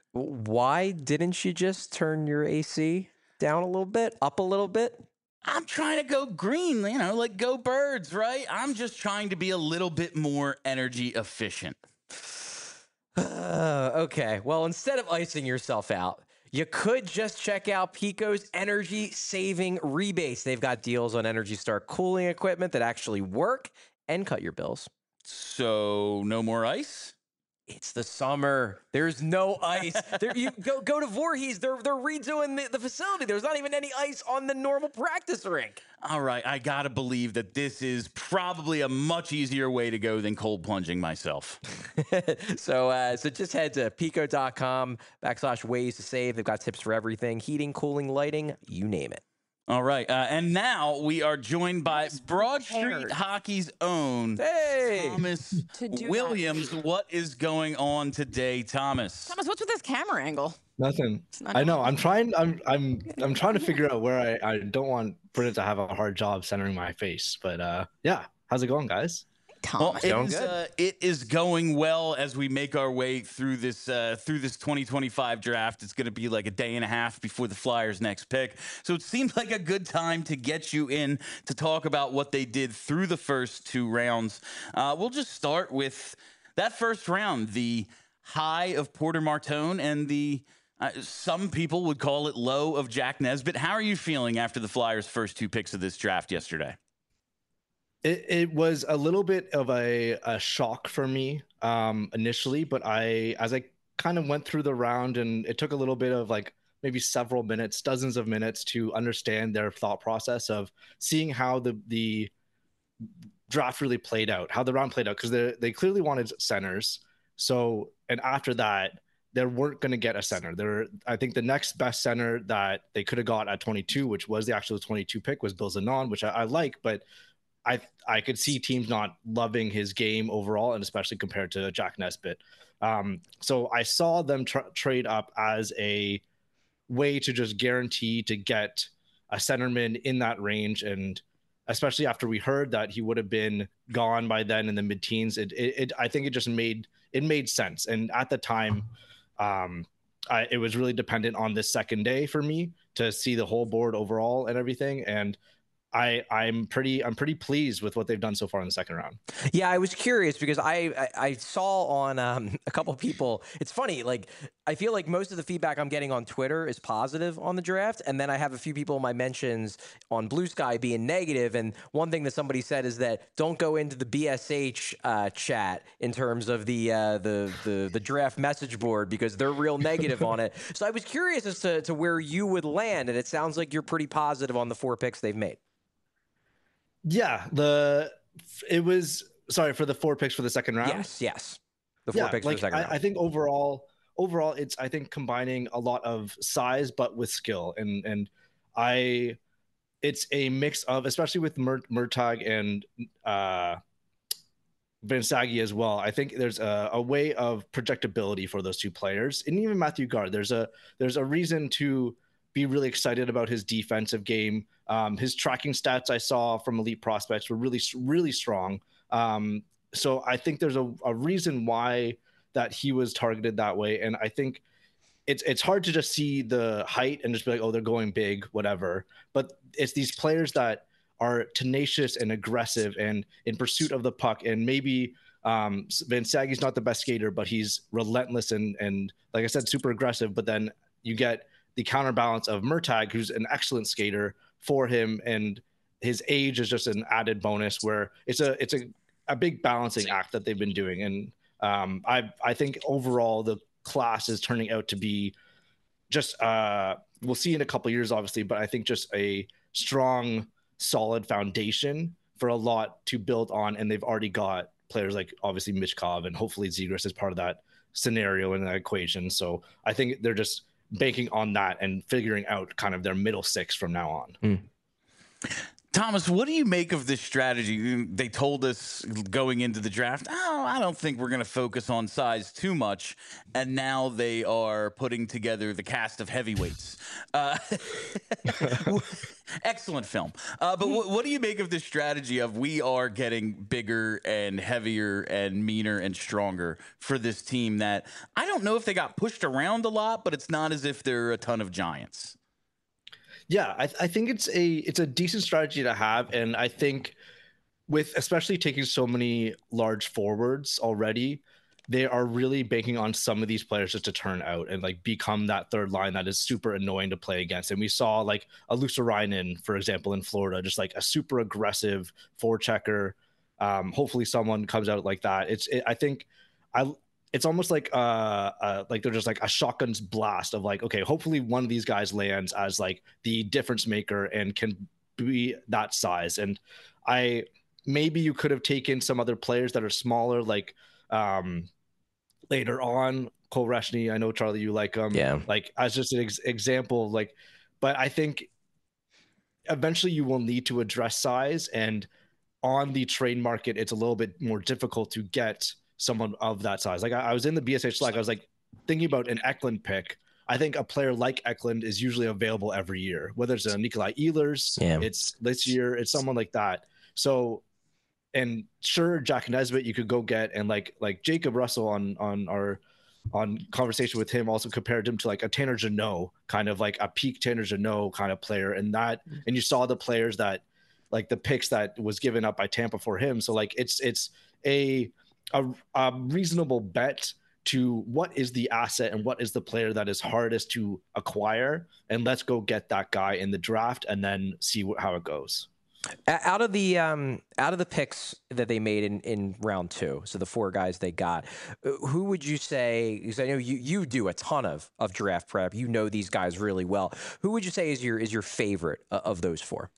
Why didn't you just turn your A C down a little bit, up a little bit? I'm trying to go green, you know, like go birds, right? I'm just trying to be a little bit more energy efficient. Uh, okay, well, instead of icing yourself out, you could just check out Pico's energy saving rebates. They've got deals on Energy Star cooling equipment that actually work and cut your bills. So no more ice? It's the summer. There's no ice. There, you go go to Voorhees. They're they're redoing the, the facility. There's not even any ice on the normal practice rink. All right, I gotta believe that this is probably a much easier way to go than cold plunging myself. so uh, so just head to pico.com backslash ways to save. They've got tips for everything: heating, cooling, lighting, you name it. All right, uh, and now we are joined by Broad Street prepared. Hockey's own Hey, Thomas To do that. Williams. What is going on today, Thomas? Thomas, what's with this camera angle? Nothing. not I know. I'm trying. I'm. I'm. I'm trying to figure out where I. I don't want Brennan to have a hard job centering my face. But uh, yeah. How's it going, guys? Well, Thomas. it Going is, good. uh, it is going well as we make our way through this uh, through this twenty twenty-five draft. It's going to be like a day and a half before the Flyers' next pick, so it seemed like a good time to get you in to talk about what they did through the first two rounds. Uh, we'll just start with that first round, the high of Porter Martone and the uh, some people would call it low of Jack Nesbitt. How are you feeling after the Flyers' first two picks of this draft yesterday? It, it was a little bit of a, a shock for me um, initially, but I, as I kind of went through the round, and it took a little bit of like maybe several minutes, dozens of minutes to understand their thought process of seeing how the the draft really played out, how the round played out, because they they clearly wanted centers. So, and after that, they weren't going to get a center. There, I think the next best center that they could have got at twenty-two, which was the actual twenty-two pick, was Bill Zanon, which I, I like, but I I could see teams not loving his game overall, and especially compared to Jack Nesbitt. Um, so I saw them tra- trade up as a way to just guarantee to get a centerman in that range, and especially after we heard that he would have been gone by then in the mid-teens, it, it, it I think it just made it made sense. And at the time, um, I, it was really dependent on this second day for me to see the whole board overall and everything. And I I'm pretty I'm pretty pleased with what they've done so far in the second round. Yeah, I was curious because I I, I saw on um, a couple of people. It's funny, like I feel like most of the feedback I'm getting on Twitter is positive on the draft, and then I have a few people in my mentions on Blue Sky being negative. And one thing that somebody said is that don't go into the B S H uh, chat in terms of the uh, the the the draft message board because they're real negative on it. So I was curious as to to where you would land, and it sounds like you're pretty positive on the four picks they've made. Yeah, the it was sorry for the four picks for the second round. Yes, yes, the four yeah, picks like, for the second I, round. I think overall, overall, it's I think combining a lot of size but with skill, and and I, it's a mix of, especially with Mur- Murtagh and uh, Vinsagi as well. I think there's a, a way of projectability for those two players, and even Matthew Gard. There's a there's a reason to be really excited about his defensive game. Um, his tracking stats I saw from Elite Prospects were really, really strong. Um, so I think there's a, a reason why that he was targeted that way. And I think it's it's hard to just see the height and just be like, oh, they're going big, whatever. But it's these players that are tenacious and aggressive and in pursuit of the puck. And maybe um, Vinsagi's not the best skater, but he's relentless and, and like I said, super aggressive. But then you get the counterbalance of Murtagh, who's an excellent skater for him, and his age is just an added bonus where it's a it's a, a big balancing act that they've been doing. And um, I I think overall the class is turning out to be just uh, we'll see in a couple of years, obviously, but I think just a strong, solid foundation for a lot to build on, and they've already got players like obviously Michkov and hopefully Zegras is part of that scenario in that equation. So I think they're just banking on that and figuring out kind of their middle six from now on. Mm. Thomas, what do you make of this strategy? They told us going into the draft, oh, I don't think we're going to focus on size too much. And now they are putting together the cast of heavyweights. Uh, excellent film. Uh, but w- what do you make of this strategy of we are getting bigger and heavier and meaner and stronger for this team that I don't know if they got pushed around a lot, but it's not as if they're a ton of giants. Yeah, I, I think it's a it's a decent strategy to have, and I think with especially taking so many large forwards already, they are really banking on some of these players just to turn out and like become that third line that is super annoying to play against. And we saw like a Luostarinen, for example, in Florida, just like a super aggressive forechecker. Um, hopefully, someone comes out like that. It's it, I think I. It's almost like uh, uh like they're just like a shotgun's blast of like, okay, hopefully one of these guys lands as like the difference maker and can be that size. And I maybe you could have taken some other players that are smaller, like um later on Cole Reshny. I know Charlie, you like him, yeah, like as just an ex- example, like, but I think eventually you will need to address size, and on the trade market, it's a little bit more difficult to get someone of that size. Like I, I was in the B S H Slack, I was like thinking about an Eklund pick. I think a player like Eklund is usually available every year, whether it's a Nikolai Ehlers, yeah. it's this year, it's someone like that. So, and sure, Jack Nesbitt, you could go get, and like like Jacob Russell on on our on conversation with him also compared him to like a Tanner Jeannot, kind of like a peak Tanner Jeannot kind of player. And that, and you saw the players that like the picks that was given up by Tampa for him. So like it's it's a a, a reasonable bet to what is the asset and what is the player that is hardest to acquire, and let's go get that guy in the draft and then see what, how it goes. O- Out of the um, out of the picks that they made in, in round two, so the four guys they got, uh, who would you say? Because I know you, you do a ton of, of draft prep. You know these guys really well. Who would you say is your is your favorite uh, of those four?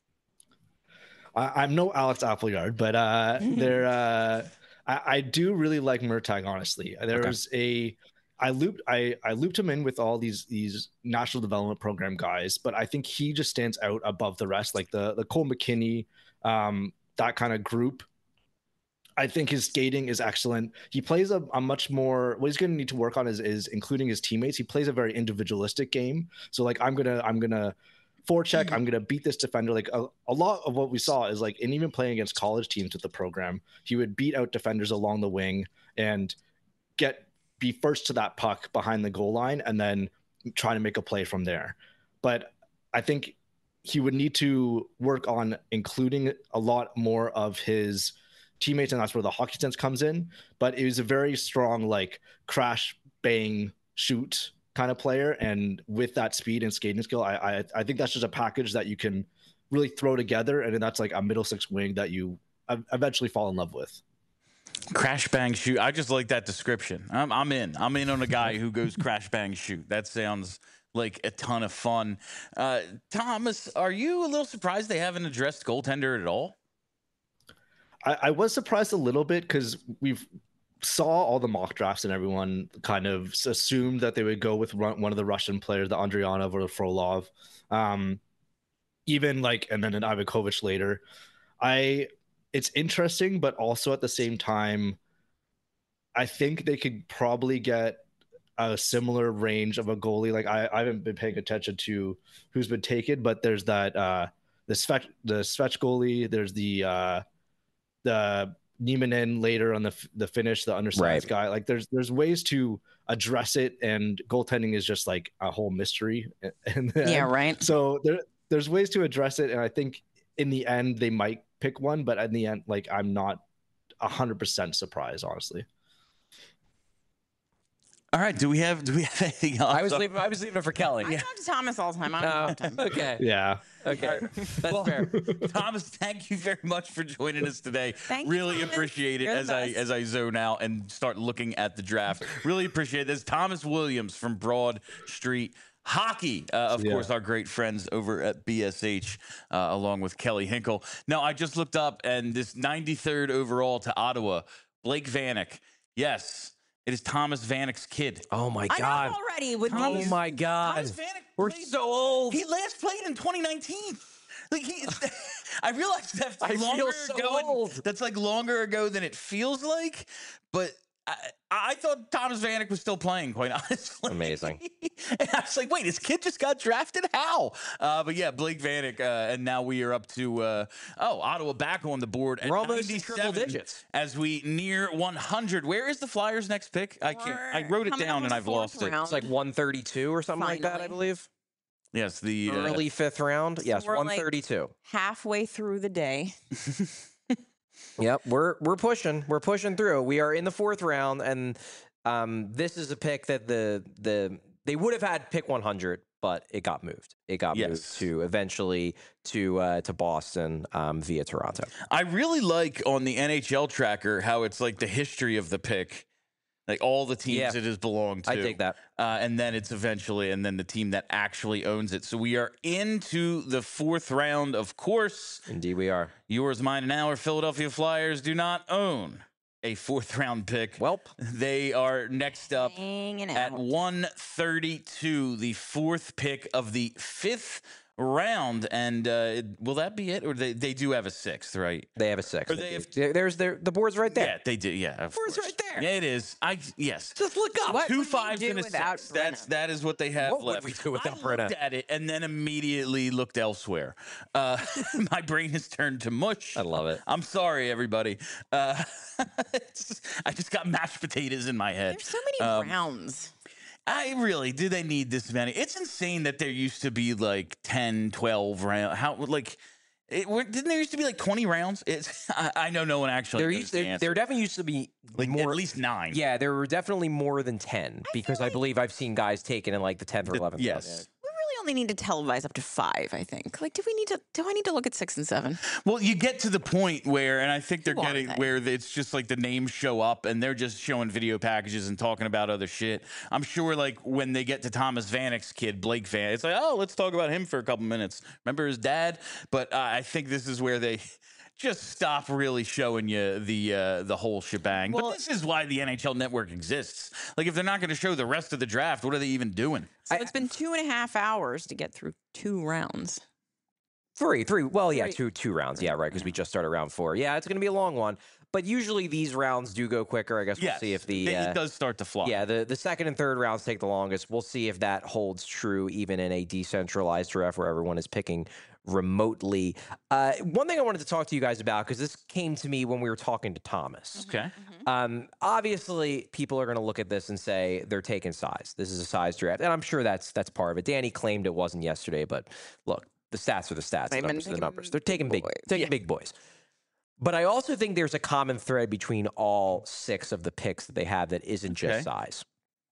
I, I'm no Alex Appleyard, but uh, they're uh, I, I do really like Murtagh. Honestly, there Okay. was a I looped I I looped him in with all these these national development program guys, but I think he just stands out above the rest, like the the Cole McKinney, um, that kind of group. I think his skating is excellent. He plays a, a much more. What he's going to need to work on is is including his teammates. He plays a very individualistic game. So like I'm gonna I'm gonna forecheck. Mm-hmm. I'm gonna beat this defender. Like a, a lot of what we saw is like, and even playing against college teams with the program, he would beat out defenders along the wing and get be first to that puck behind the goal line, and then try to make a play from there. But I think he would need to work on including a lot more of his teammates, and that's where the hockey sense comes in. But it was a very strong, like, crash, bang, shoot kind of player, and with that speed and skating skill, I, I I think that's just a package that you can really throw together, and that's like a middle six wing that you eventually fall in love with. Crash bang shoot. I just like that description. I'm I'm in. I'm in on a guy who goes crash bang shoot. That sounds like a ton of fun. Uh, Thomas, are you a little surprised they haven't addressed goaltender at all? I, I was surprised a little bit because we've saw all the mock drafts and everyone kind of assumed that they would go with one of the Russian players, the Andrianov or the Frolov, um, even like, and then an Ivakovich later. I, it's interesting, but also at the same time, I think they could probably get a similar range of a goalie. Like I, I haven't been paying attention to who's been taken, but there's that uh, the Svech, the Svech goalie. There's the uh, the Nieminen later on the the finish, the undersized right. guy. Like there's there's ways to address it, and goaltending is just like a whole mystery. And then, yeah, right. So there there's ways to address it, and I think in the end they might pick one, but in the end, like I'm not a hundred percent surprised, honestly. All right. Do we have do we have anything else? I was leaving. I was leaving it for Kelly. I yeah. talk to Thomas all the time. I don't uh, have time. Okay. Yeah. Okay. That's well, fair. Thomas, thank you very much for joining us today. Thank really you, appreciate it You're as I as I zone out and start looking at the draft. Really appreciate this. Thomas Williams from Broad Street Hockey, uh, of yeah. course, our great friends over at B S H, uh, along with Kelly Hinkle. Now, I just looked up, and this ninety-third overall to Ottawa, Blake Vanek. Yes, it is Thomas Vanek's kid. Oh my God! I know already. With Thomas, these. Oh my God! Thomas Vanek We're played, so old. He last played in twenty nineteen. Like he, I realize that's I longer feel so ago. old. That's like longer ago than it feels like, but. I, I thought Thomas Vanek was still playing, quite honestly. Amazing. And I was like, wait, his kid just got drafted? How? Uh, but yeah, Blake Vanek, uh, and now we are up to, uh, oh, Ottawa back on the board at We're almost in triple digits. As we near one hundred. Where is the Flyers' next pick? I can't. I wrote it down and I've lost it. It's like one thirty-two or something Finally. like that, I believe. Yes, the early uh, fifth round. So yes, we're one thirty-two. Like halfway through the day. Yep, we're we're pushing. We're pushing through. We are in the fourth round, and um, this is a pick that the the they would have had pick one hundred, but it got moved. It got Yes. moved to eventually to uh, to Boston um, via Toronto. I really like on the N H L tracker how it's like the history of the pick. Like all the teams Yeah. it has belonged to. I take that. Uh, and then it's eventually, and then the team that actually owns it. So we are into the fourth round, of course. Indeed, we are. Yours, mine, and our Philadelphia Flyers do not own a fourth round pick. Welp. They are next up Hanging at out. one thirty-two, the fourth pick of the fifth round. And uh, will that be it? Or they, they do have a sixth, right? They have a six. Or they have- There- There's their the board's right there. Yeah, they do. Yeah, of Board's course. right there. Yeah, it is. I yes. Just look up. What Two would we fives do and a without six. That's Brenna? that is what they have What would left. we do without I Brenna? looked at it and then immediately looked elsewhere. Uh, my brain has turned to mush. I love it. I'm sorry, everybody. Uh, it's- I just got mashed potatoes in my head. There's so many Um, rounds. I really do. They need this many. It's insane that there used to be like ten, twelve rounds. How like. It, were- didn't there used to be like twenty rounds? It's I, I know no one actually. There knows used the there, answer. there definitely used to be like more. at least nine. Yeah, there were definitely more than ten because I believe I've seen guys taken in like the tenth or The- eleventh. yes. We really only need to televise up to five, I think. Like, do we need to, do I need to look at six and seven? Well, you get to the point where, and I think they're Who are getting they? where it's just like the names show up and they're just showing video packages and talking about other shit. I'm sure like when they get to Thomas Vanek's kid, Blake Van, it's like, oh, let's talk about him for a couple minutes. Remember his dad? But uh, I think this is where they just stop really showing you the uh, the whole shebang. Well- but this is why the N H L Network exists. Like, if they're not going to show the rest of the draft, what are they even doing? So it's been two and a half hours to get through two rounds. Three, three. Well, yeah, Three. two, two rounds. Yeah, right. Because we just started round four. Yeah, it's going to be a long one. But usually these rounds do go quicker. I guess we'll Yes, see if the it, uh, it does start to fly. yeah the the second and third rounds take the longest. We'll see if that holds true even in a decentralized draft where everyone is picking remotely. Uh, one thing I wanted to talk to you guys about, because this came to me when we were talking to Thomas. Okay. Um, obviously, people are going to look at this and say they're taking size. This is a size draft, and I'm sure that's that's part of it. Danny claimed it wasn't yesterday, but look, the stats are the stats. The They've been numbers are the taking numbers. They're taking big, boys. taking Yeah. big boys. But I also think there's a common thread between all six of the picks that they have that isn't just Okay. size.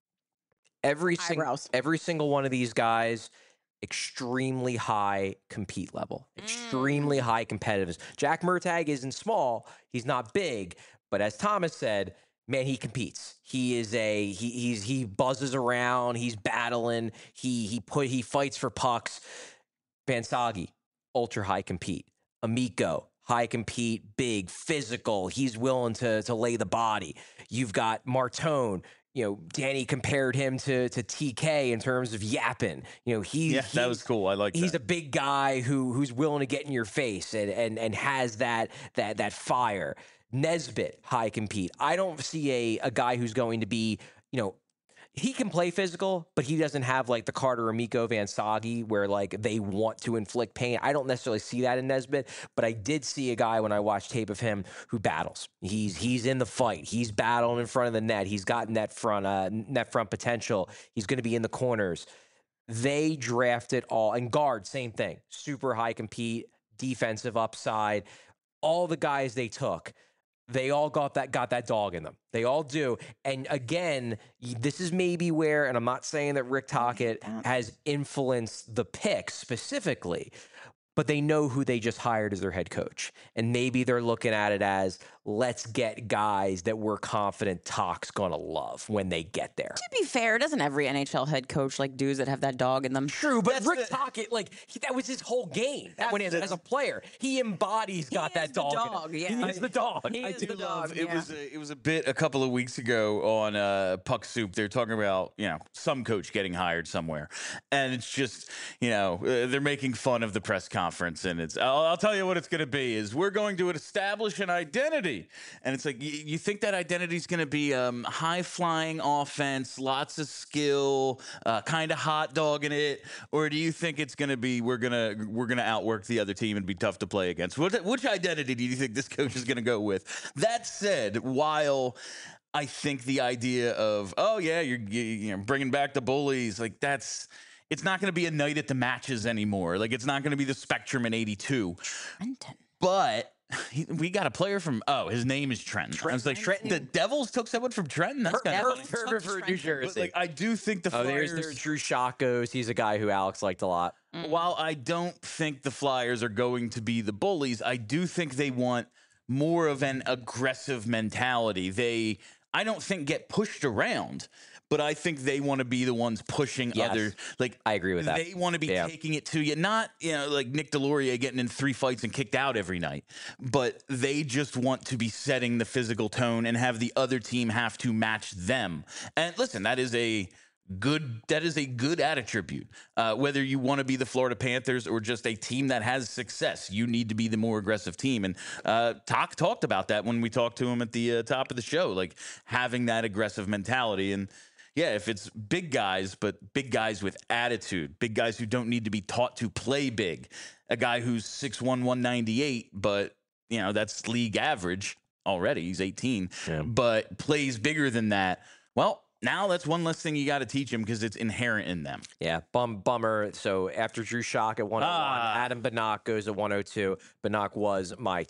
Every single Eyebrows. every single one of these guys, extremely high compete level, extremely Mm. high competitiveness. Jack Murtagh isn't small, he's not big, but as Thomas said, man, he competes. He is a he he's he buzzes around, he's battling, he he put he fights for pucks. Bansagi, ultra high compete. Amico, high compete, big, physical. He's willing to to lay the body. You've got Martone. You know, Danny compared him to to T K in terms of yapping. You know, he Yeah, that was he's- cool. I like He's that. a big guy who who's willing to get in your face and and and has that that that fire. Nesbitt, high compete. I don't see a a guy who's going to be, you know, he can play physical, but he doesn't have like the Carter Amico Van Sagi where like they want to inflict pain. I don't necessarily see that in Nesbitt, but I did see a guy when I watched tape of him who battles. He's he's in the fight. He's battling in front of the net. He's got net front uh, net front potential. He's going to be in the corners. They drafted all and guard, same thing. Super high compete, defensive upside. All the guys they took, they all got that got that dog in them. They all do. And again, y- this is maybe where, and I'm not saying that Rick Tocchet that. has influenced the pick specifically, but they know who they just hired as their head coach. And maybe they're looking at it as, let's get guys that we're confident Tocc's going to love when they get there. To be fair, doesn't every N H L head coach like dudes that have that dog in them? True, but That's Rick the- Tocchet, like, he, that was his whole game when he, the- as a player. He embodies got is that the dog. in him. dog, yeah. He is the dog. He I is do the love dog, it yeah. was a, it was a bit a couple of weeks ago on uh, Puck Soup. They're talking about, you know, some coach getting hired somewhere, and it's just, you know, uh, they're making fun of the press conference, and it's I'll, I'll tell you what it's going to be is we're going to establish an identity, and it's like you, you think that identity is going to be um, high flying offense, lots of skill, uh, kind of hot dogging it, or do you think it's going to be we're gonna we're gonna outwork the other team and be tough to play against? Which, which identity do you think this coach is going to go with? That said, while I think the idea of oh yeah you're you, you know bringing back the bullies, like that's it's not going to be a night at the matches anymore. Like it's not going to be the Spectrum in eighty-two, Trenton. but. He, we got a player from oh his name is Trenton. I was like Trenton. the Devils took someone from Trenton. That's kind of Devils funny. took Hereford, New Trenton. Jersey. But like I do think the Oh, Flyers. there's, there's Drew Shockos. He's a guy who Alex liked a lot. While I don't think the Flyers are going to be the bullies, I do think they want more of an aggressive mentality. They, I don't think get pushed around, but I think they want to be the ones pushing Yes. other. Like I agree with that. They want to be Yeah. taking it to you, not you know like Nick Deslauriers getting in three fights and kicked out every night, but they just want to be setting the physical tone and have the other team have to match them. And listen, that is a good that is a good attribute. Uh, whether you want to be the Florida Panthers or just a team that has success, you need to be the more aggressive team. And uh, Talk talked about that when we talked to him at the uh, top of the show, like having that aggressive mentality. And yeah, if it's big guys, but big guys with attitude, big guys who don't need to be taught to play big, a guy who's six one, one ninety-eight, but you know that's league average already. He's eighteen, Yeah. but plays bigger than that. Well, now that's one less thing you got to teach him because it's inherent in them. Yeah, bum, bummer. So after Drew Shock at one oh one, Ah. Adam Banach goes at one oh two. Banach was my top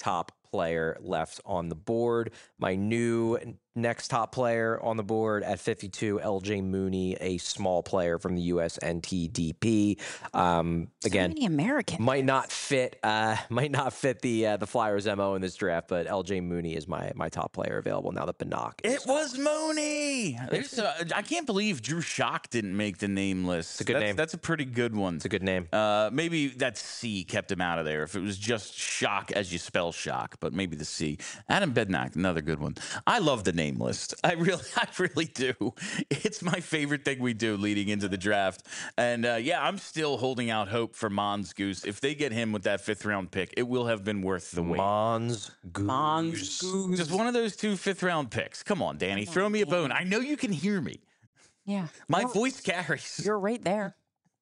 player left on the board. My new next top player on the board at fifty-two, L J Mooney, a small player from the U S N T D P. Um, so again, many Americans. might not fit. Uh, might not fit the uh, the Flyers M O in this draft, but L J Mooney is my my top player available now that Banach. It was Mooney. There's a, I can't believe Drew Schock didn't make the name list. It's a good that's, name. That's a pretty good one. It's a good name. Uh, maybe that C kept him out of there. If it was just shock as you spell shock, but maybe the C. Adam Bednack, another good one. I love the name list. I really, I really do. It's my favorite thing we do leading into the draft. And uh, yeah, I'm still holding out hope for Mons Goose. If they get him with that fifth round pick, it will have been worth the wait. Mons Goose. Mons Goose. Just one of those two fifth round picks. Come on, Danny, throw me a bone. I know you can hear me. Yeah. My You're- voice carries. You're right there.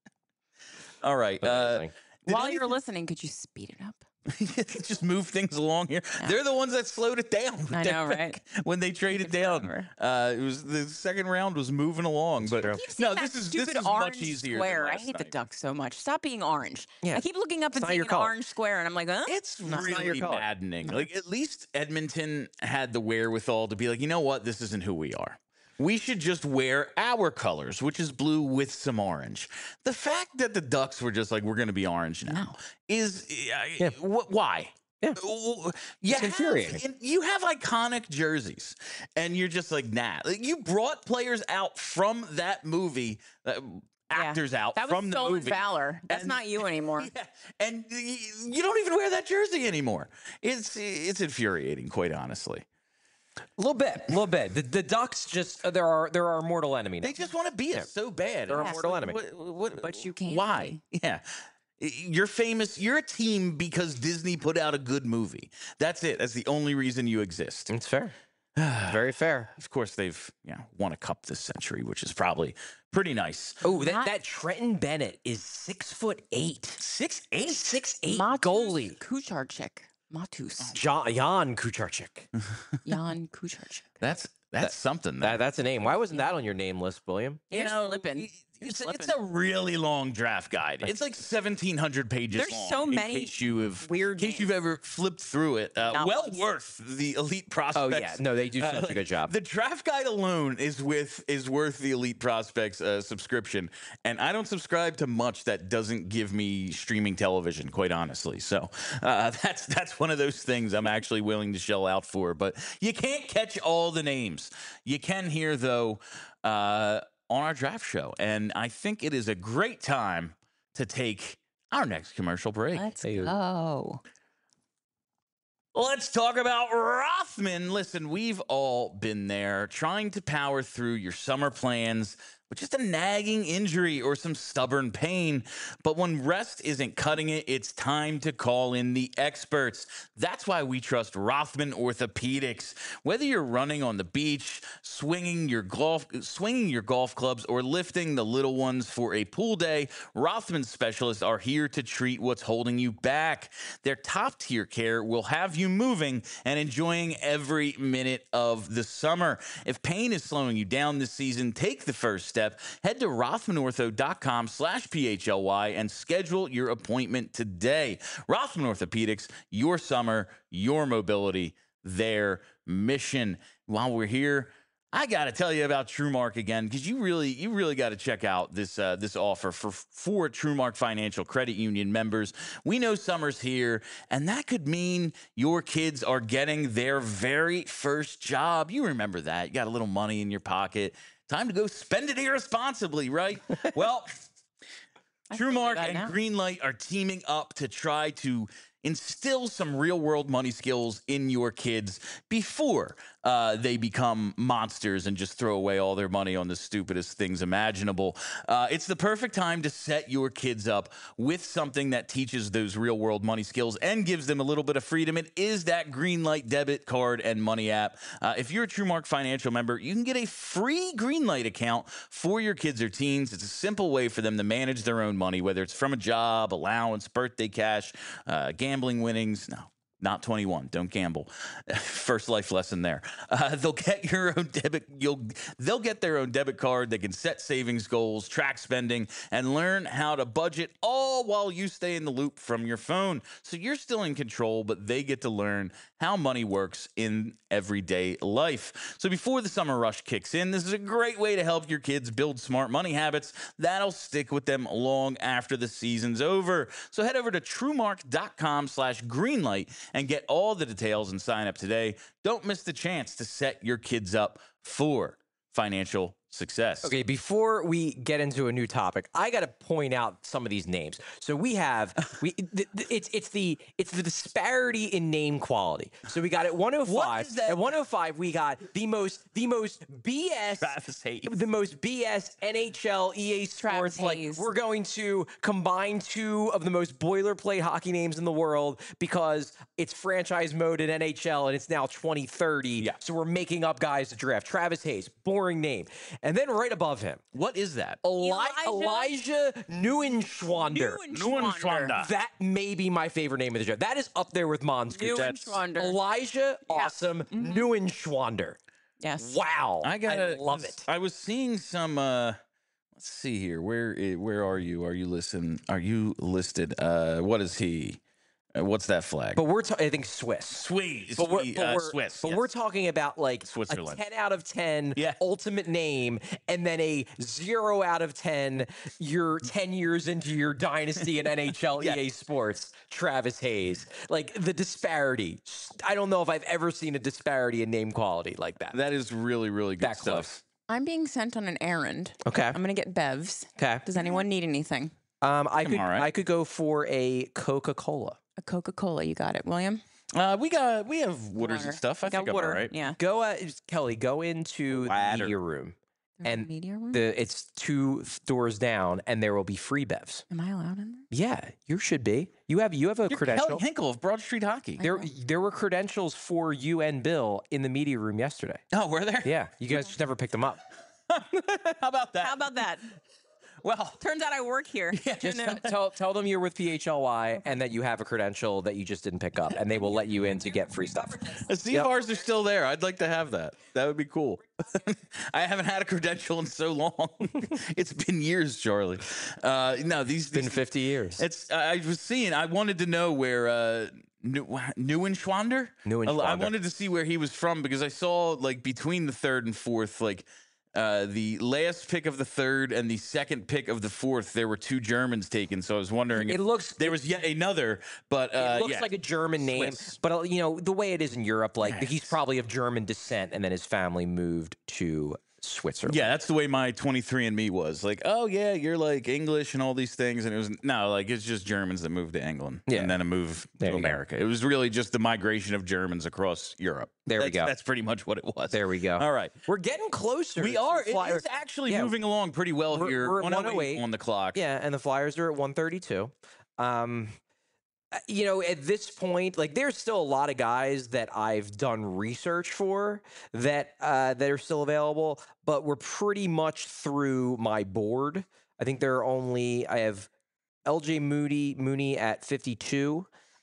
All right. Uh, Amazing. did While anything- you're listening, could you speed it up? just move things along here. They're the ones that slowed it down. with I their know, pick right? When they traded down, forever. uh, it was the second round was moving along. but true. Keep seeing no, that this is stupid this is orange much easier. square. Than I last hate the night. Ducks so much. Stop being orange. Yeah. I keep looking up and not seeing your an color. orange square, and I'm like, huh? It's not your really color. maddening. Like at least Edmonton had the wherewithal to be like, you know what, this isn't who we are. We should just wear our colors, which is blue with some orange. The fact that the Ducks were just like, we're going to be orange now, is uh, Yeah. wh- why? Yeah. Uh, You have, infuriating. you have iconic jerseys, and you're just like, nah. Like, you brought players out from that movie, uh, actors out That was from the stolen movie. valor. That's And- not you anymore. Yeah, and y- you don't even wear that jersey anymore. It's it's infuriating, quite honestly. A little bit, a little bit. The, the Ducks just uh, there are there are mortal enemy. Now. They just want to be us so bad. They're a And it's mortal like, enemy. What, what, But you can't Why? Yeah. You're famous. You're a team because Disney put out a good movie. That's it. That's the only reason you exist. It's fair. Very fair. Of course, they've yeah won a cup this century, which is probably pretty nice. Oh, that, Not- that Trenton Bennett is six foot eight. Six eight. Six eight Matus goalie. Kucharczyk. Matus. John, Jan Kucharczyk. Jan Kucharczyk. That's that's something. That, that's a name. Why wasn't that on your name list, William? You You're know, slipping. y- You're It's, slipping. it's a really long draft guide. It's like seventeen hundred pages There's long. so in many case you have, weird in case you've names. ever flipped through it. Uh, Not well once. worth the elite prospects. Oh yeah, no, they do such Uh, a good job. The draft guide alone is with is worth the elite prospects uh, subscription, and I don't subscribe to much that doesn't give me streaming television. Quite honestly, so uh, that's that's one of those things I'm actually willing to shell out for. But you can't catch all the names. You can hear though. Uh, on our draft show. And I think it is a great time to take our next commercial break. Let's Hey, go. Let's talk about Rothman. Listen, we've all been there trying to power through your summer plans with just a nagging injury or some stubborn pain. But when rest isn't cutting it, it's time to call in the experts. That's why we trust Rothman Orthopedics. Whether you're running on the beach, swinging your golf, swinging your golf clubs, or lifting the little ones for a pool day, Rothman specialists are here to treat what's holding you back. Their top tier care will have you moving and enjoying every minute of the summer. If pain is slowing you down this season, take the first step. Head to rothmanortho.com slash PHLY and schedule your appointment today. Rothman Orthopedics, your summer, your mobility, their mission. While we're here, I got to tell you about TrueMark again, because you really, you really got to check out this uh, this offer for for TrueMark Financial Credit Union members. We know summer's here, and that could mean your kids are getting their very first job. You remember that? You got a little money in your pocket. Time to go spend it irresponsibly, right? Well, I feel TrueMark that and now. Greenlight are teaming up to try to instill some real world money skills in your kids before uh, they become monsters and just throw away all their money on the stupidest things imaginable. Uh, it's the perfect time to set your kids up with something that teaches those real world money skills and gives them a little bit of freedom. It is that Greenlight debit card and money app. Uh, if you're a TrueMark Financial member, you can get a free Greenlight account for your kids or teens. It's a simple way for them to manage their own money, whether it's from a job, allowance, birthday cash, uh, gambling winnings. No, Not twenty-one. Don't gamble. First life lesson there. Uh, they'll get your own debit. You'll. They'll get their own debit card. They can set savings goals, track spending, and learn how to budget, all while you stay in the loop from your phone. So you're still in control, but they get to learn how money works in everyday life. So before the summer rush kicks in, this is a great way to help your kids build smart money habits that'll stick with them long after the season's over. So head over to truemark.com slash greenlight and get all the details and sign up today. Don't miss the chance to set your kids up for financial success. Okay, before we get into a new topic, I got to point out some of these names. So we have we th- th- it's it's the it's the disparity in name quality. So we got at one oh five. At one oh five, we got the most the most B S Travis Hayes. the most B S N H L E A Travis Sports. Like Hayes. we're going to combine two of the most boilerplate hockey names in the world because it's franchise mode in N H L and it's now twenty thirty. Yeah. So we're making up guys to draft. Travis Hayes, boring name. And then right above him, What is that? Eli- Elijah- Elijah Neuenschwander. Neuenschwander. That may be my favorite name of the draft. That is up there with Monsker. Neuenschwander. Elijah, awesome, Neuenschwander. Yes. Wow. I gotta love it. I was seeing some. uh Let's see here. Where i- where are you? Are you listen? Are you listed? Uh What is he? Uh, what's that flag? But we're, ta- I think, Swiss. Sweet, But we're, Sweet, but uh, we're, Swiss. but yes. we're talking about like Switzerland. a ten out of ten Yeah. ultimate name and then a zero out of ten you're ten years into your dynasty in N H L Yeah. E A Sports, Travis Hayes. Like the disparity. I don't know if I've ever seen a disparity in name quality like that. That is really really good That stuff. close. I'm being sent on an errand. Okay. I'm gonna get Bevs. Okay. Does anyone need anything? Um, I I'm could all right. I could go for a Coca-Cola. A Coca-Cola. You got it, William. Uh, we got we have waters Water. and stuff. I got think I'm water. all right. Yeah. Go, uh, Kelly. Go into Ladder. the media room, There's a and media room. the it's two doors down, and there will be free bevs. Am I allowed in there? Yeah, you should be. You have you have a You're credential. Kelly Hinkle of Broad Street Hockey. There there were credentials for you and Bill in the media room yesterday. Oh, were there? Yeah, you guys just never picked them up. How about that? How about that? well, Turns out I work here. Just No. t- tell tell them you're with P H L Y and that you have a credential that you just didn't pick up, and they will let you in to get free stuff. see Yep. if ours are still there. I'd like to have that. That would be cool. I haven't had a credential in so long. It's been years, Charlie. Uh, no, these, It's been these fifty years. It's. I was seeing. I wanted to know where uh, New, Neuenschwander. Neuenschwander. I wanted to see where he was from because I saw like between the third and fourth, like uh, the last pick of the third and the second pick of the fourth, there were two Germans taken. So I was wondering. It if looks- there was yet another, but uh, It looks yeah. like a German name, Swiss. but uh, you know the way it is in Europe, like Yes. he's probably of German descent, and then his family moved to Switzerland. Yeah, that's the way my twenty-three and me was. Like, oh yeah, you're like English and all these things, and it was no, like it's just Germans that moved to England, Yeah. and then a move There to you go. America. It was really just the migration of Germans across Europe. There we That's- go. That's pretty much what it was. There we go. All right, We're getting closer. we to are. It, Flyer- it's actually Yeah. moving along pretty well We're- here. we're at one oh eight one oh eight. on the clock. Yeah, and the Flyers are at one thirty-two. Um, uh, you know, at this point, like there's still a lot of guys that I've done research for that uh, that are still available, but we're pretty much through my board. I think there are only I have L J Moody Mooney at fifty-two.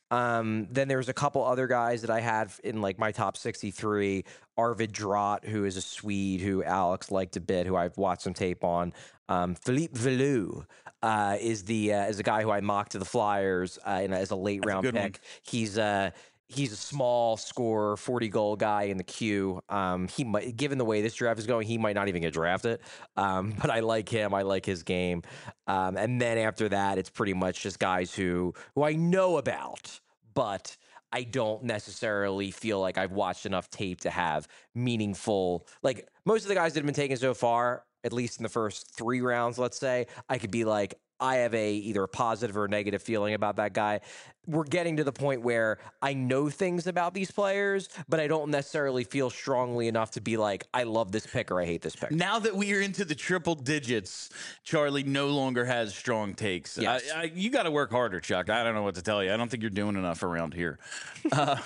Um, then there's a couple other guys that I had in like my top sixty-three. Arvid Drott, who is a Swede who Alex liked a bit, who I've watched some tape on. Um, Philippe Velou uh, is the uh, is a guy who I mocked to the Flyers uh, in a, as a late That's a round good pick. one. He's uh, he's a small scorer, forty goal guy in the queue. Um, he might, given the way this draft is going, he might not even get drafted. Um, but I like him. I like his game. Um, and then after that, it's pretty much just guys who who I know about, but I don't necessarily feel like I've watched enough tape to have meaningful. Like most of the guys that have been taken so far, at least in the first three rounds, let's say, I could be like, I have a either a positive or a negative feeling about that guy. We're getting to the point where I know things about these players, but I don't necessarily feel strongly enough to be like, I love this pick or I hate this pick. Now that we are into the triple digits, Charlie no longer has strong takes. Yes. I, I, you got to work harder, Chuck. I don't know what to tell you. I don't think you're doing enough around here. uh,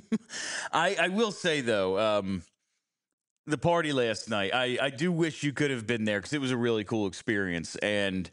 I, I will say, though, um, the party last night, I, I do wish you could have been there because it was a really cool experience. And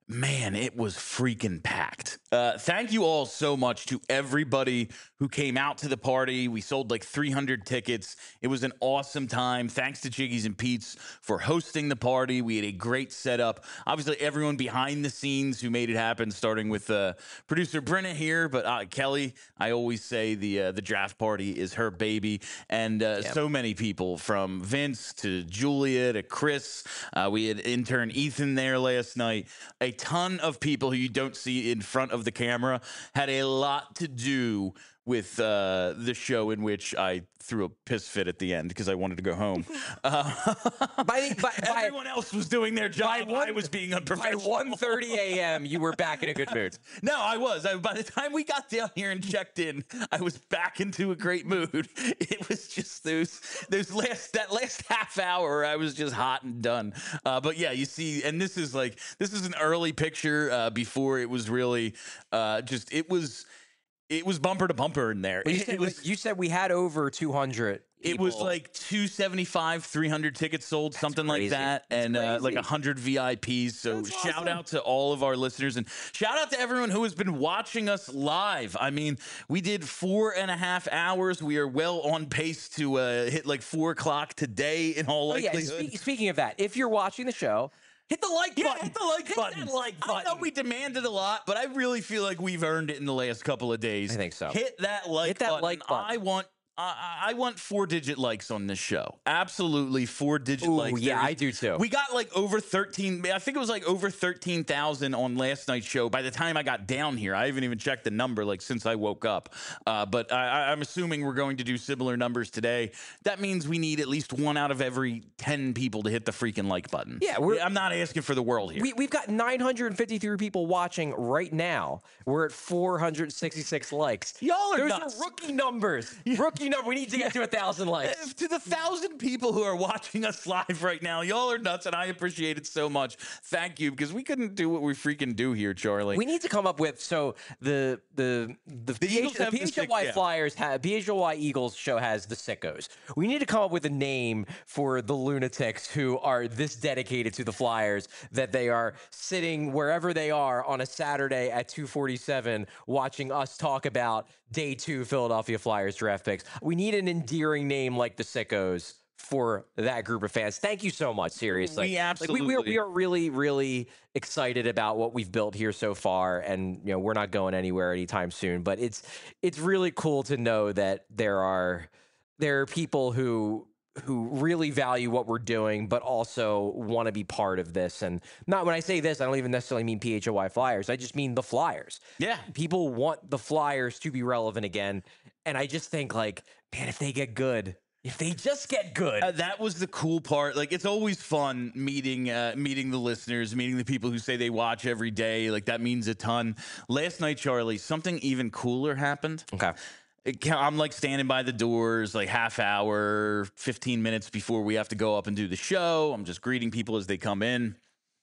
Man, it was freaking packed. Uh, thank you all so much to everybody who came out to the party. We sold like three hundred tickets. It was an awesome time. Thanks to Jiggies and Pete's for hosting the party. We had a great setup. Obviously, everyone behind the scenes who made it happen, starting with uh, producer Brenna here, but uh, Kelly, I always say the uh, the draft party is her baby, and uh, Yep. so many people from Vince to Julia to Chris. Uh, we had intern Ethan there last night. A ton of people who you don't see in front of the camera had a lot to do with uh, the show in which I threw a piss fit at the end because I wanted to go home. Uh, By, by, by, everyone else was doing their job. one- I was being by unprofessional. one thirty a.m., you were back in a good mood. No, I was. I, by the time we got down here and checked in, I was back into a great mood. It was just those those last that last half hour, I was just hot and done. Uh, but yeah, you see, and this is like this is an early picture uh, before it was really uh, just it was it was bumper to bumper in there. But you, It, said, it was. you said we had over two hundred. It was people. like two seventy-five, three hundred tickets sold, something like crazy. that, That's and uh, like crazy. one hundred V I Ps. So That's shout awesome. out to all of our listeners, and shout out to everyone who has been watching us live. I mean, we did four and a half hours. We are well on pace to uh, hit like four o'clock today in all Oh, yeah. likelihood. Spe- speaking of that, if you're watching the show, hit the like Yeah, button. hit the like Hit button. that like I know button. we demanded a lot, but I really feel like we've earned it in the last couple of days. I think so. Hit that like Hit that button. like button. I want I I want four digit likes on this show. Absolutely four digit Ooh, likes. yeah, There's- I do too. We got like over thirteen. I think it was like over thirteen thousand on last night's show. By the time I got down here, I haven't even checked the number like since I woke up. Uh, but I, I- I'm assuming we're going to do similar numbers today. That means we need at least one out of every ten people to hit the freaking like button. Yeah, we're- I'm not asking for the world here. We, we've got nine hundred fifty-three people watching right now. We're at four hundred sixty-six likes. Y'all are Those nuts. are rookie numbers. Rookie number. We need to get to a thousand likes. If to the thousand people who are watching us live right now, y'all are nuts, and I appreciate it so much. Thank you, because we couldn't do what we freaking do here, Charlie. We need to come up with so the the the, The Eagles P H, have the the sick- P H L Y yeah. Flyers have P H L Y Eagles show has the sickos. We need to come up with a name for the lunatics who are this dedicated to the Flyers that they are sitting wherever they are on a Saturday at two forty-seven watching us talk about day two Philadelphia Flyers draft picks. We need an endearing name like the sickos for that group of fans. Thank you so much. Seriously, We Like, we, we, are, absolutely- we are really, really excited about what we've built here so far, and you know we're not going anywhere anytime soon. But it's it's really cool to know that there are there are people who who really value what we're doing, but also want to be part of this. And not when I say this, I don't even necessarily mean P H O Y Flyers. I just mean the Flyers. Yeah. People want the Flyers to be relevant again, and I just think like, man, if they get good, if they just get good. Uh, that was the cool part. Like, it's always fun meeting uh, meeting the listeners, meeting the people who say they watch every day. Like, that means a ton. Last night, Charlie, something even cooler happened. okay. It ca- I'm like standing by the doors, like half hour, fifteen minutes before we have to go up and do the show. I'm just greeting people as they come in.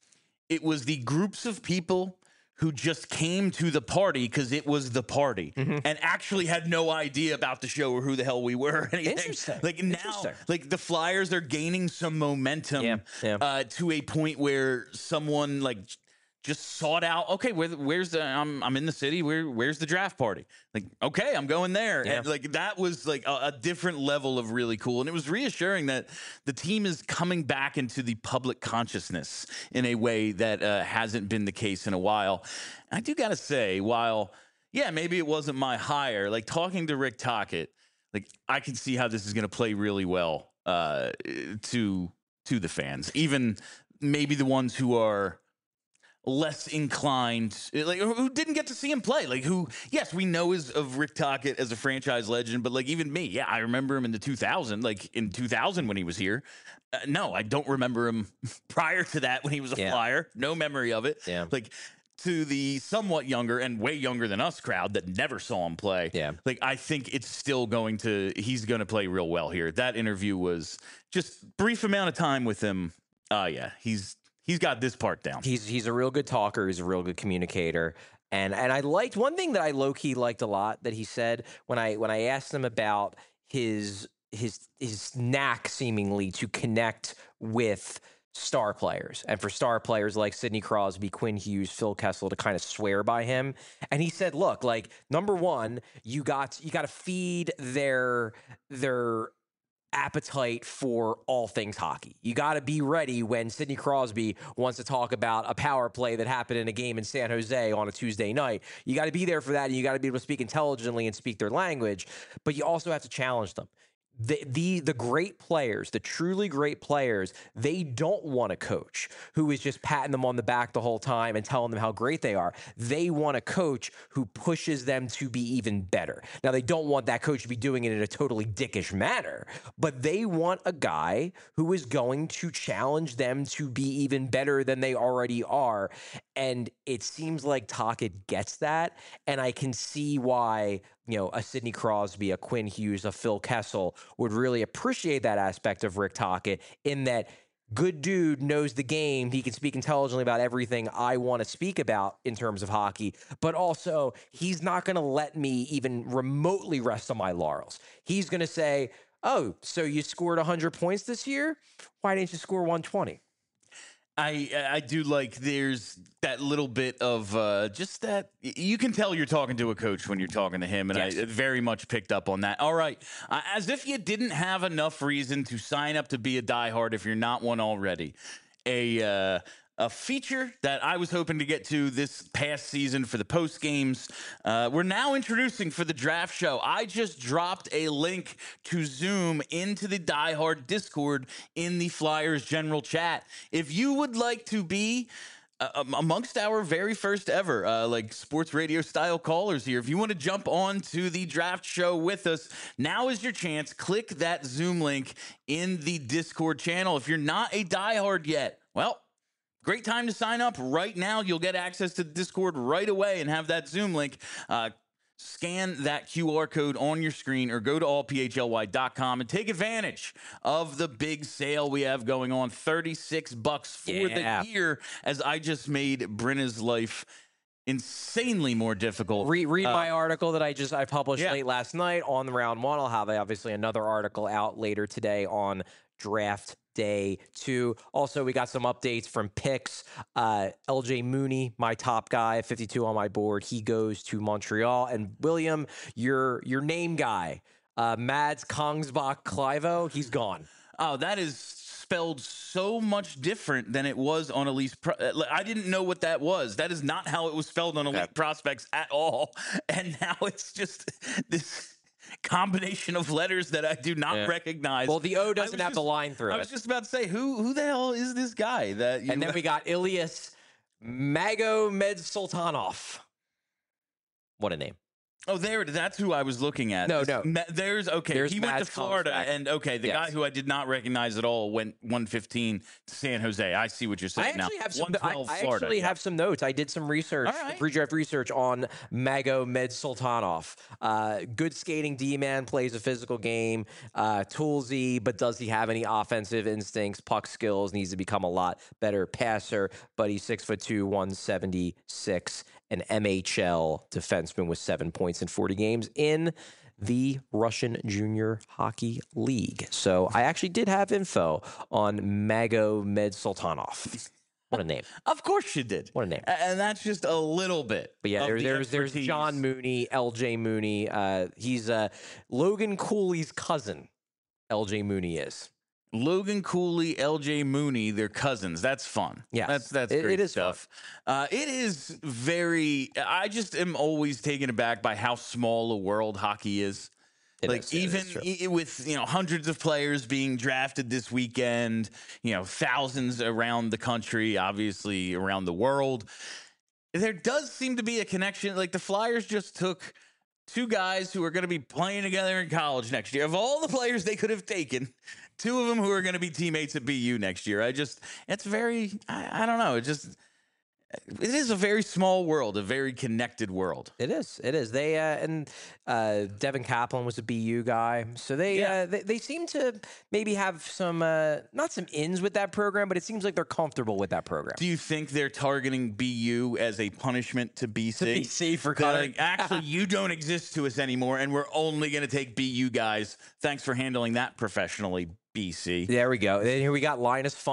It was the groups of people who just came to the party because it was the party and actually had no idea about the show or who the hell we were or anything. Interesting. Like now, Interesting. like the Flyers are gaining some momentum Yeah, yeah. Uh, to a point where someone like just sought out, okay, where, where's the, I'm, I'm in the city, where, where's the draft party? Like, okay, I'm going there. Yeah. And like, that was like a, a different level of really cool. And it was reassuring that the team is coming back into the public consciousness in a way that uh, hasn't been the case in a while. And I do got to say, while, yeah, maybe it wasn't my hire, like talking to Rick Tocchet, like I can see how this is going to play really well uh, to, to the fans, even maybe the ones who are less inclined, like who didn't get to see him play, like who, yes, we know is of Rick Tocchet as a franchise legend, but like even me, yeah, I remember him in the two thousand, like in two thousand when he was here. Uh, no, I don't remember him prior to that when he was a Yeah. Flyer. No memory of it. Yeah. Like to the somewhat younger and way younger than us crowd that never saw him play. Yeah. Like I think it's still going to, he's going to play real well here. That interview was just brief amount of time with him. Uh, yeah, he's, He's got this part down. He's he's a real good talker. He's a real good communicator. And and I liked one thing that I low key liked a lot that he said when I when I asked him about his his his knack seemingly to connect with star players, and for star players like Sidney Crosby, Quinn Hughes, Phil Kessel to kind of swear by him. And he said, "Look, like number one, you got you got to feed their their." appetite for all things hockey. You got to be ready when Sidney Crosby wants to talk about a power play that happened in a game in San Jose on a Tuesday night. You got to be there for that, and you got to be able to speak intelligently and speak their language, but you also have to challenge them. The, the the great players, the truly great players, they don't want a coach who is just patting them on the back the whole time and telling them how great they are. They want a coach who pushes them to be even better. Now, they don't want that coach to be doing it in a totally dickish manner, but they want a guy who is going to challenge them to be even better than they already are. And it seems like Tocchet gets that, and I can see why, you know, a Sidney Crosby, a Quinn Hughes, a Phil Kessel would really appreciate that aspect of Rick Tocchet, in that good dude knows the game. He can speak intelligently about everything I want to speak about in terms of hockey, but also he's not going to let me even remotely rest on my laurels. He's going to say, oh, so you scored one hundred points this year? Why didn't you score one twenty? I I do like there's that little bit of uh, just that you can tell you're talking to a coach when you're talking to him, and yes. I very much picked up on that. All right, uh, as if you didn't have enough reason to sign up to be a diehard if you're not one already. A uh, a feature that I was hoping to get to this past season for the post games, uh, we're now introducing for the draft show. I just dropped a link to Zoom into the Die Hard Discord in the Flyers general chat. If you would like to be uh, amongst our very first ever, uh, like sports radio style callers here, if you want to jump on to the draft show with us, now is your chance. Click that Zoom link in the Discord channel. If you're not a diehard yet, well, great time to sign up right now. You'll get access to the Discord right away and have that Zoom link. Uh, scan that Q R code on your screen or go to all p h l y dot com and take advantage of the big sale we have going on. thirty-six bucks for Yeah. the year, as I just made Brenna's life insanely more difficult. Read, read uh, my article that I just I published yeah. late last night on the round one. I'll have obviously another article out later today on draft day two. Also, we got some updates from picks. Uh, L J Mooney, my top guy, fifty-two on my board. He goes to Montreal. And William, your your name guy, uh, Mads Kongsbach Clivo, he's gone. Oh, that is spelled so much different than it was on Elite. Pro- I didn't know what that was. That is not how it was spelled on Elite yeah. Prospects at all. And now it's just this combination of letters that I do not yeah. recognize. Well, the O doesn't have just, the line through I it. I was just about to say, who who the hell is this guy? That you And then we got Ilyas Magomedsultanov. What a name. Oh, there, that's who I was looking at. No, no. There's, okay, There's he went Mads to Florida, Kongsbach. and, okay, the yes. guy who I did not recognize at all went one fifteen to San Jose. I see what you're saying now. I actually have some, I, I Florida, actually yeah. have some notes. I did some research, right. pre-draft research on Magomedsultanov. Uh, good skating D-man, plays a physical game, uh, toolsy, but does he have any offensive instincts, puck skills, needs to become a lot better passer, but he's six foot two, one seventy-six, an M H L defenseman with seven points in forty games in the Russian Junior Hockey League. So I actually did have info on Magomedsultanov. What a name. Of course you did. What a name. And that's just a little bit. But yeah, there, the there's there's John Mooney, L J Mooney. Uh, he's uh, Logan Cooley's cousin, L J Mooney is. Logan Cooley, L J Mooney, they're cousins. That's fun. Yeah, that's that's it, great it is stuff. Uh, it is very. I just am always taken aback by how small a world hockey is. It like is, even e- with you know hundreds of players being drafted this weekend, you know thousands around the country, obviously around the world. There does seem to be a connection. Like the Flyers just took two guys who are going to be playing together in college next year. Of all the players they could have taken, two of them who are going to be teammates at B U next year. I just, it's very, I, I don't know. It just, it is a very small world, a very connected world. It is. It is. They uh, and uh, Devin Kaplan was a B U guy, so they Yeah. uh, they, they seem to maybe have some uh, not some ins with that program, but it seems like they're comfortable with that program. Do you think they're targeting B U as a punishment to B C? To B C for They're cutting. like, actually, you don't exist to us anymore, and we're only going to take B U guys. Thanks for handling that professionally, B C. There we go. Then here we got Linus Funk.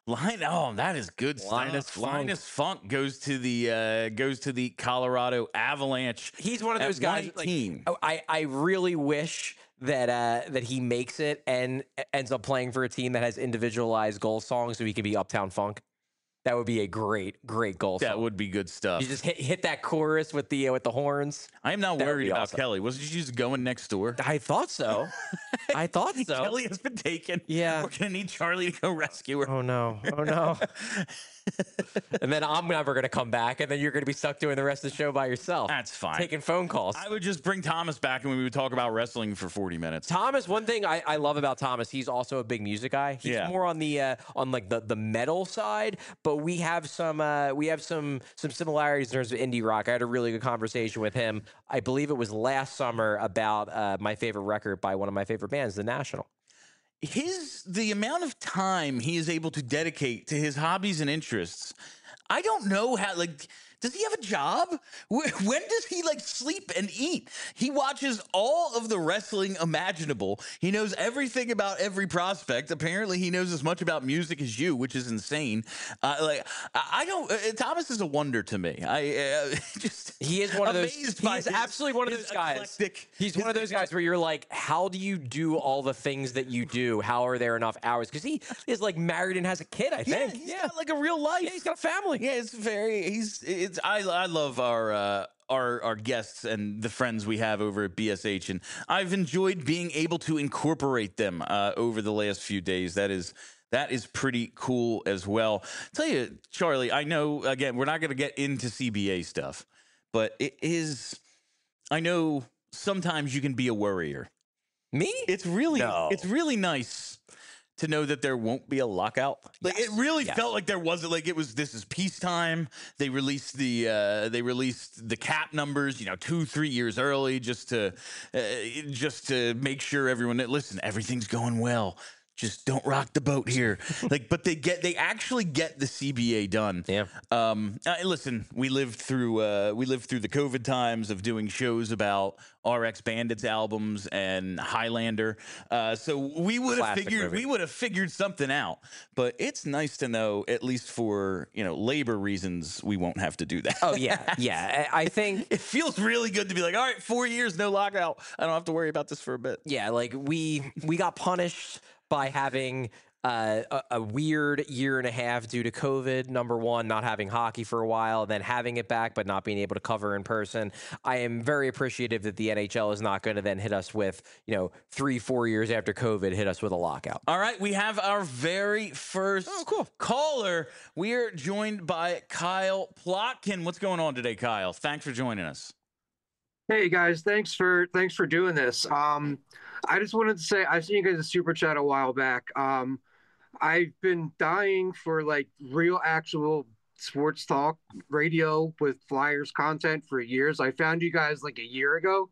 Line, oh, that is good Linus stuff. Funk. Linus Funk goes to the uh, goes to the Colorado Avalanche. He's one of at those guys. Like, nineteen. oh, I I really wish that uh, that he makes it and ends up playing for a team that has individualized goal songs, so he can be Uptown Funk. That would be a great, great goal That song. would be good stuff. You just hit hit that chorus with the uh, with the horns. I am not That would worried be about awesome. Kelly. Wasn't she just going next door? I thought so. I thought so. Kelly has been taken. Yeah. We're gonna need Charlie to go rescue her. Oh no! Oh no! And then I'm never going to come back, and then you're going to be stuck doing the rest of the show by yourself. That's fine. Taking phone calls. I would just bring Thomas back, and we would talk about wrestling for forty minutes. Thomas, one thing I, I love about Thomas, he's also a big music guy. He's Yeah. more on the uh, on like the, the metal side, but we have some uh, we have some some similarities in terms of indie rock. I had a really good conversation with him. I believe it was last summer about uh, my favorite record by one of my favorite bands, The National. His the amount of time he is able to dedicate to his hobbies and interests. I don't know how, like, does he have a job? When does he, like, sleep and eat? He watches all of the wrestling imaginable. He knows everything about every prospect. Apparently, he knows as much about music as you, which is insane. Uh, like, I I don't, uh, Thomas is a wonder to me. I uh, just, He is one of those. amazed He by is his- absolutely one of his those guys. eclectic- He's his one of those guys where you're like, how do you do all the things that you do? How are there enough hours? Because he is like married and has a kid. I Yeah, think. he's got like a real life. Yeah, he's got a family. Yeah, it's very. He's. It's. I. I love our. Uh, our our guests and the friends we have over at B S H, and I've enjoyed being able to incorporate them uh, over the last few days. That is. That is pretty cool as well. Tell you, Charlie. I know. Again, we're not going to get into C B A stuff, but it is. I know sometimes you can be a worrier. Me? It's really. No. It's really nice to know that there won't be a lockout. Like Yes, it really yes. felt like there wasn't, like it was, this is peacetime. They released the, uh, they released the cap numbers, you know, two, three years early just to, uh, just to make sure everyone, listen, everything's going well. Just don't rock the boat here. Like, but they get, they actually get the C B A done. Yeah. Um, uh, listen, we lived through, uh, we lived through the COVID times of doing shows about R X Bandits albums and Highlander. Uh, so we would have Classic figured, movie. we would have figured something out. But it's nice to know, at least for, you know, labor reasons, we won't have to do that. Oh yeah, yeah. I I think It feels really good to be like, all right, four years, no lockout. I don't have to worry about this for a bit. yeah, like we we got punished by having uh, a, a weird year and a half due to COVID. Number one, not having hockey for a while, then having it back, but not being able to cover in person. I am very appreciative that the N H L is not going to then hit us with, you know, three, four years after COVID, hit us with a lockout. All right, we have our very first Oh, cool. caller. We are joined by Kyle Plotkin. What's going on today, Kyle? Thanks for joining us. Hey guys, thanks for thanks for doing this. Um, I just wanted to say I've seen you guys a super chat a while back. Um, I've been dying for like real, actual sports talk radio with Flyers content for years. I found you guys like a year ago,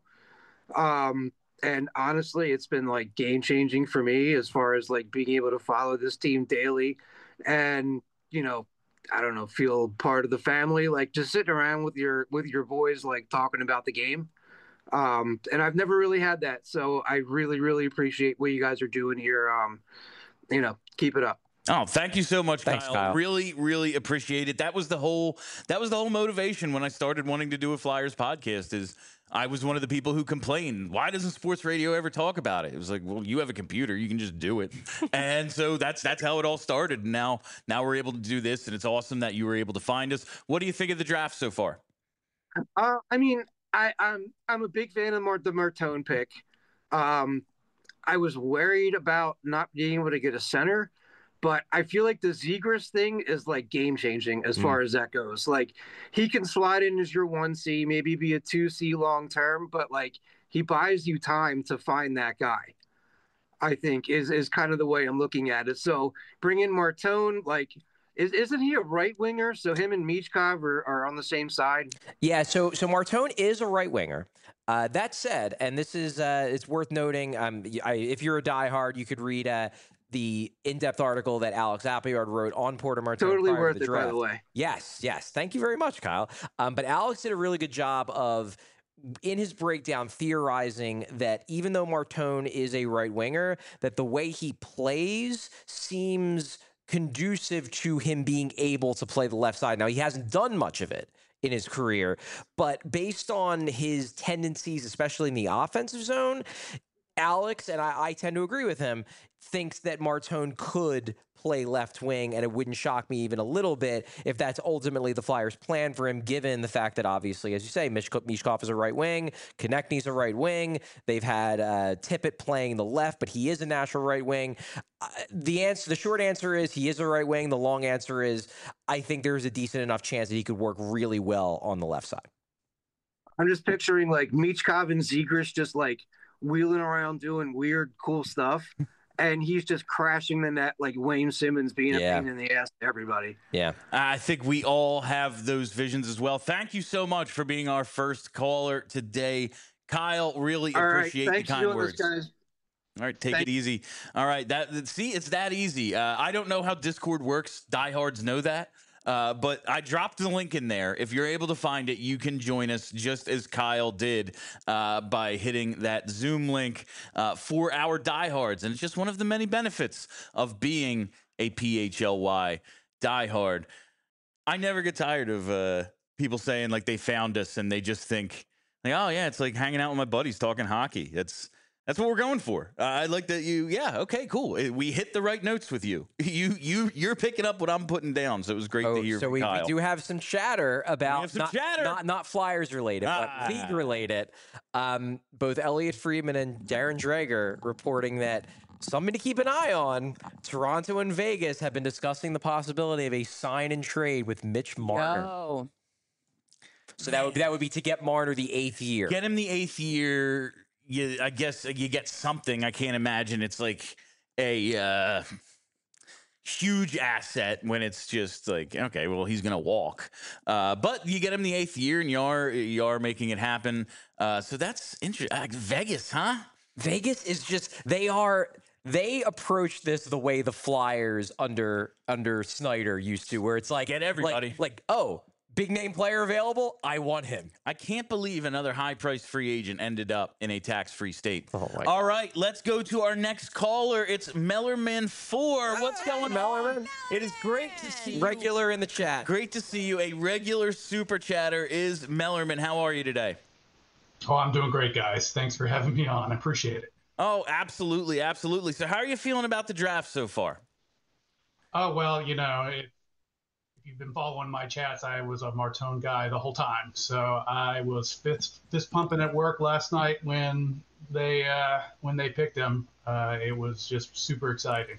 um, and honestly, it's been like game changing for me as far as like being able to follow this team daily, and you know. I don't know, feel part of the family, like just sitting around with your with your boys, like talking about the game. Um, and I've never really had that, so I really, really appreciate what you guys are doing here. Um, you know, keep it up. Oh, thank you so much, Thanks, Kyle. Kyle. Really, really appreciate it. That was the whole that was the whole motivation when I started wanting to do a Flyers podcast. Is I was one of the people who complained, why doesn't sports radio ever talk about it? It was like, well, you have a computer, you can just do it. And so that's that's how it all started. And now now we're able to do this, and it's awesome that you were able to find us. What do you think of the draft so far? Uh, I mean, I, I'm I'm a big fan of Mar- the Martone pick. Um, I was worried about not being able to get a center, but I feel like the Zegras thing is like game changing as Mm. far as that goes. Like he can slide in as your one C, maybe be a two C long term, but like he buys you time to find that guy. I think is is kind of the way I'm looking at it. So bring in Martone, like is isn't he a right winger? So him and Michkov are, are on the same side. Yeah, so so Martone is a right winger. Uh, that said, and this is uh, it's worth noting. Um, y- I, if you're a diehard, you could read uh, the in-depth article that Alex Appleyard wrote on Porter Martone. Totally prior to worth the it, by draft. the way. Yes, yes. Thank you very much, Kyle. Um, but Alex did a really good job of, in his breakdown, theorizing that even though Martone is a right winger, that the way he plays seems conducive to him being able to play the left side. Now, he hasn't done much of it in his career, but based on his tendencies, especially in the offensive zone, Alex, and I, I tend to agree with him, thinks that Martone could play left wing, and it wouldn't shock me even a little bit if that's ultimately the Flyers' plan for him, given the fact that obviously, as you say, Mish- Mishkov is a right wing, Konechny's a right wing. They've had uh, Tippett playing the left, but he is a natural right wing. Uh, the answer, the short answer is he is a right wing. The long answer is I think there's a decent enough chance that he could work really well on the left side. I'm just picturing like Michkov and Zegras just like wheeling around doing weird, cool stuff. And he's just crashing the net like Wayne Simmons being Yeah. a pain in the ass to everybody. Yeah. I think we all have those visions as well. Thank you so much for being our first caller today. Kyle, really all appreciate right. the Thanks kind for doing words. this, guys. All right, take Thank- it easy. All right, that see, it's that easy. Uh, I don't know how Discord works. Diehards know that. Uh, but I dropped the link in there. If you're able to find it, you can join us just as Kyle did uh, by hitting that Zoom link uh, for our diehards. And it's just one of the many benefits of being a P H L Y diehard. I never get tired of uh, people saying like they found us and they just think, like, oh, yeah, it's like hanging out with my buddies talking hockey. That's That's what we're going for. Uh, I like that you, yeah, okay, cool. We hit the right notes with you. You, you, you're picking up what I'm putting down, so it was great oh, to hear so from we, Kyle. we do have some chatter about some not, chatter. not not Flyers related, Ah. but league related. Um, both Elliot Friedman and Darren Dreger reporting that something to keep an eye on. Toronto and Vegas have been discussing the possibility of a sign and trade with Mitch Marner. Oh. So that would that would be to get Marner the eighth year. Get him the eighth year. You, I guess you get something. I can't imagine it's like a uh, huge asset when it's just like, okay, well, he's going to walk. Uh, but you get him the eighth year, and you are, you are making it happen. Uh, so that's interesting. Uh, Vegas, huh? Vegas is just, they are, they approach this the way the Flyers under under Snyder used to, where it's like, Get everybody. Like, like oh, big name player available, I want him. I can't believe another high-priced free agent ended up in a tax-free state. Oh my All right, let's go to our next caller. It's Mellerman four. What's going Mellerman? on? It is great to see you. Regular in the chat. Great to see you. A regular super chatter is Mellerman. How are you today? Oh, I'm doing great, guys. Thanks for having me on. I appreciate it. Oh, absolutely, absolutely. So how are you feeling about the draft so far? Oh, well, you know, it, if you've been following my chats, I was a Martone guy the whole time. So I was fist, fist pumping at work last night when they uh, when they picked him. Uh, it was just super exciting.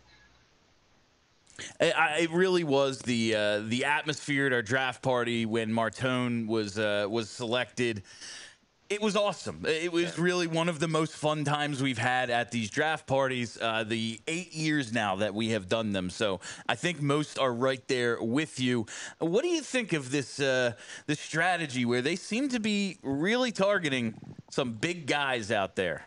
It, I, it really was the uh, the atmosphere at our draft party when Martone was uh, was selected. It was awesome. It was really one of the most fun times we've had at these draft parties, uh, the eight years now that we have done them. So I think most are right there with you. What do you think of this uh, this strategy where they seem to be really targeting some big guys out there?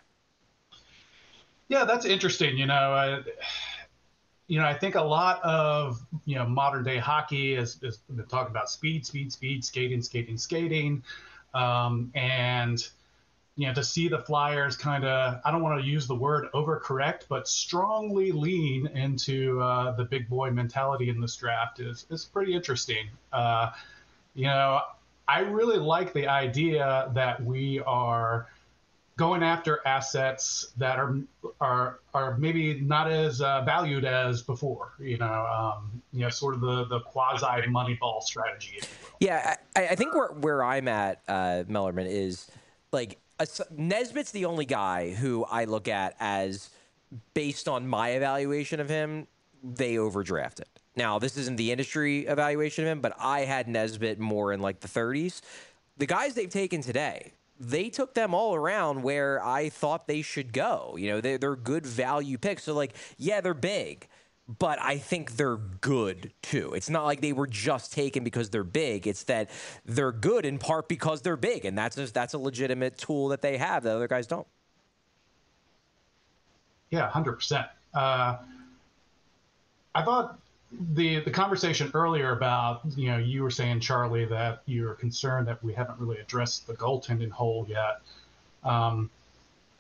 Yeah, that's interesting. You know, uh, you know, I think a lot of, you know, modern day hockey is, is been talking about speed, speed, speed, skating, skating, skating. Um, and, you know, to see the Flyers kind of, I don't want to use the word overcorrect, but strongly lean into uh, the big boy mentality in this draft is, is pretty interesting. Uh, you know, I really like the idea that we are going after assets that are are are maybe not as uh, valued as before. You know, um, you know, sort of the the quasi Moneyball strategy, if you will. Yeah, I, I think where where I'm at, uh, Mellerman, is like a, Nesbitt's the only guy who I look at as, based on my evaluation of him, they overdrafted. Now, this isn't the industry evaluation of him, but I had Nesbitt more in like the thirties. The guys they've taken today, they took them all around where I thought they should go. You know, they're, they're good value picks. So, like, yeah, they're big, but I think they're good, too. It's not like they were just taken because they're big. It's that they're good in part because they're big, and that's a, that's a legitimate tool that they have that other guys don't. Yeah, one hundred percent. Uh, I thought the the conversation earlier about, you know, you were saying, Charlie, that you're concerned that we haven't really addressed the goaltending hole yet. Um,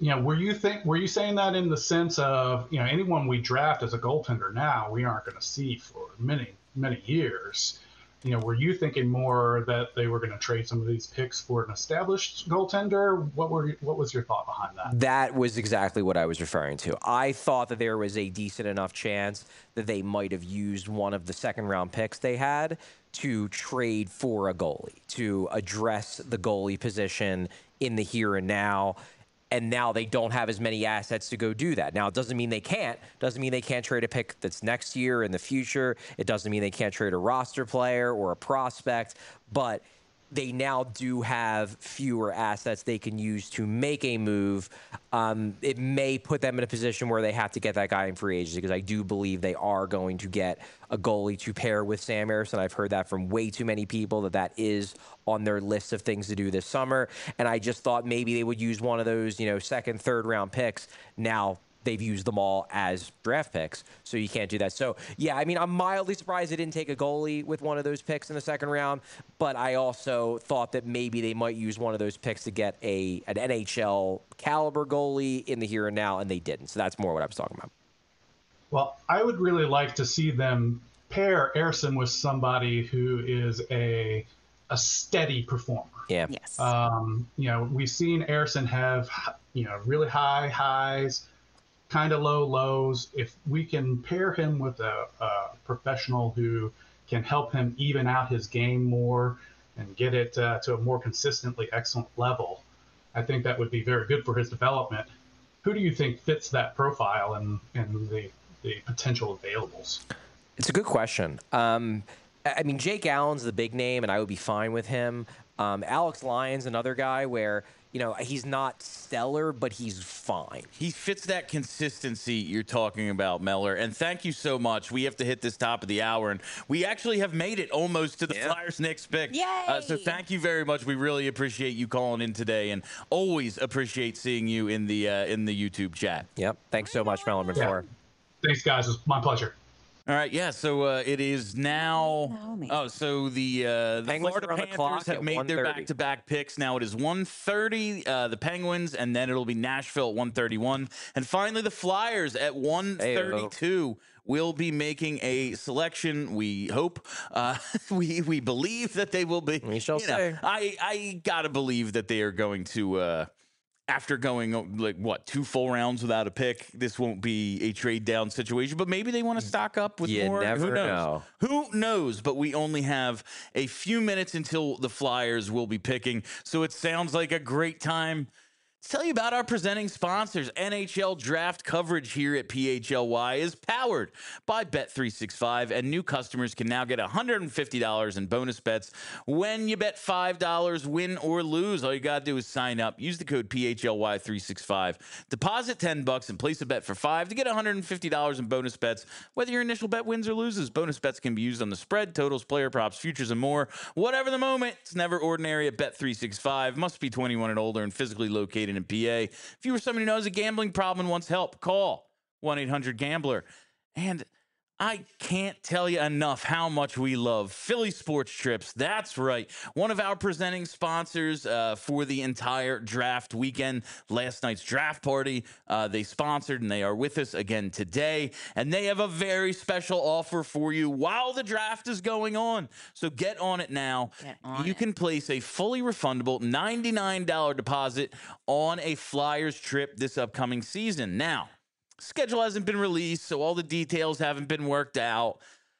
you know, were you think were you saying that in the sense of, you know, anyone we draft as a goaltender now, we aren't going to see for many many years? You know, were you thinking more that they were going to trade some of these picks for an established goaltender? What were what was your thought behind that? That was exactly what I was referring to. I thought that there was a decent enough chance that they might have used one of the second round picks they had to trade for a goalie, to address the goalie position in the here and now. And now they don't have as many assets to go do that. Now, it doesn't mean they can't. Doesn't mean they can't trade a pick that's next year in the future. It doesn't mean they can't trade a roster player or a prospect. But they now do have fewer assets they can use to make a move. Um, it may put them in a position where they have to get that guy in free agency, because I do believe they are going to get a goalie to pair with Sam Ersson. I've heard that from way too many people, that that is on their list of things to do this summer. And I just thought maybe they would use one of those, you know, second, third round picks. Now they've used them all as draft picks, so you can't do that. So, yeah, I mean, I'm mildly surprised they didn't take a goalie with one of those picks in the second round, but I also thought that maybe they might use one of those picks to get a an N H L caliber goalie in the here and now, and they didn't. So that's more what I was talking about. Well, I would really like to see them pair Ersson with somebody who is a a steady performer. Yeah. Yes. Um, you know, we've seen Ersson have, you know, really high highs, kind of low lows. If we can pair him with a, a professional who can help him even out his game more and get it uh, to a more consistently excellent level, I think that would be very good for his development. Who do you think fits that profile and, and the, the potential availables? It's a good question. Um, I mean, Jake Allen's the big name, and I would be fine with him. Um, Alex Lyon's another guy where, you know, he's not stellar, but he's fine. He fits that consistency you're talking about, Meller. And thank you so much. We have to hit this top of the hour, and we actually have made it almost to the yeah. Flyers' next pick. Yay! Uh, so thank you very much. We really appreciate you calling in today, and always appreciate seeing you in the uh, in the YouTube chat. Yep. Thanks so much, Mellerman. Yeah. Thanks, guys. It's my pleasure. All right, yeah, so uh, it is now – oh, so the, uh, the Florida Panthers have made their back-to-back picks. Now it is one thirty, uh, the Penguins, and then it'll be Nashville at one thirty-one. And finally, the Flyers at one thirty-two will be making a selection, we hope. Uh, we we believe that they will be. We shall you say. Know, I, I got to believe that they are going to uh, – after going, like, what, two full rounds without a pick, this won't be a trade-down situation. But maybe they want to stock up with you more. Never Who knows? know. Who knows? But we only have a few minutes until the Flyers will be picking. So it sounds like a great time to tell you about our presenting sponsors. N H L draft coverage here at P H L Y is powered by Bet three sixty-five, and new customers can now get one hundred fifty dollars in bonus bets when you bet five dollars, win or lose. All you got to do is sign up. Use the code P H L Y three sixty-five. Deposit ten bucks and place a bet for five to get one hundred fifty dollars in bonus bets, whether your initial bet wins or loses. Bonus bets can be used on the spread, totals, player props, futures, and more. Whatever the moment, it's never ordinary at Bet three sixty-five. Must be twenty-one and older and physically located in P A. If you or someone who knows a gambling problem and wants help, call one eight hundred gambler. And I can't tell you enough how much we love Philly Sports Trips. That's right. One of our presenting sponsors uh, for the entire draft weekend. Last night's draft party, uh, they sponsored, and they are with us again today. And they have a very special offer for you while the draft is going on. So get on it now. Get on you it. can place a fully refundable ninety-nine dollars deposit on a Flyers trip this upcoming season. Now, schedule hasn't been released, so all the details haven't been worked out.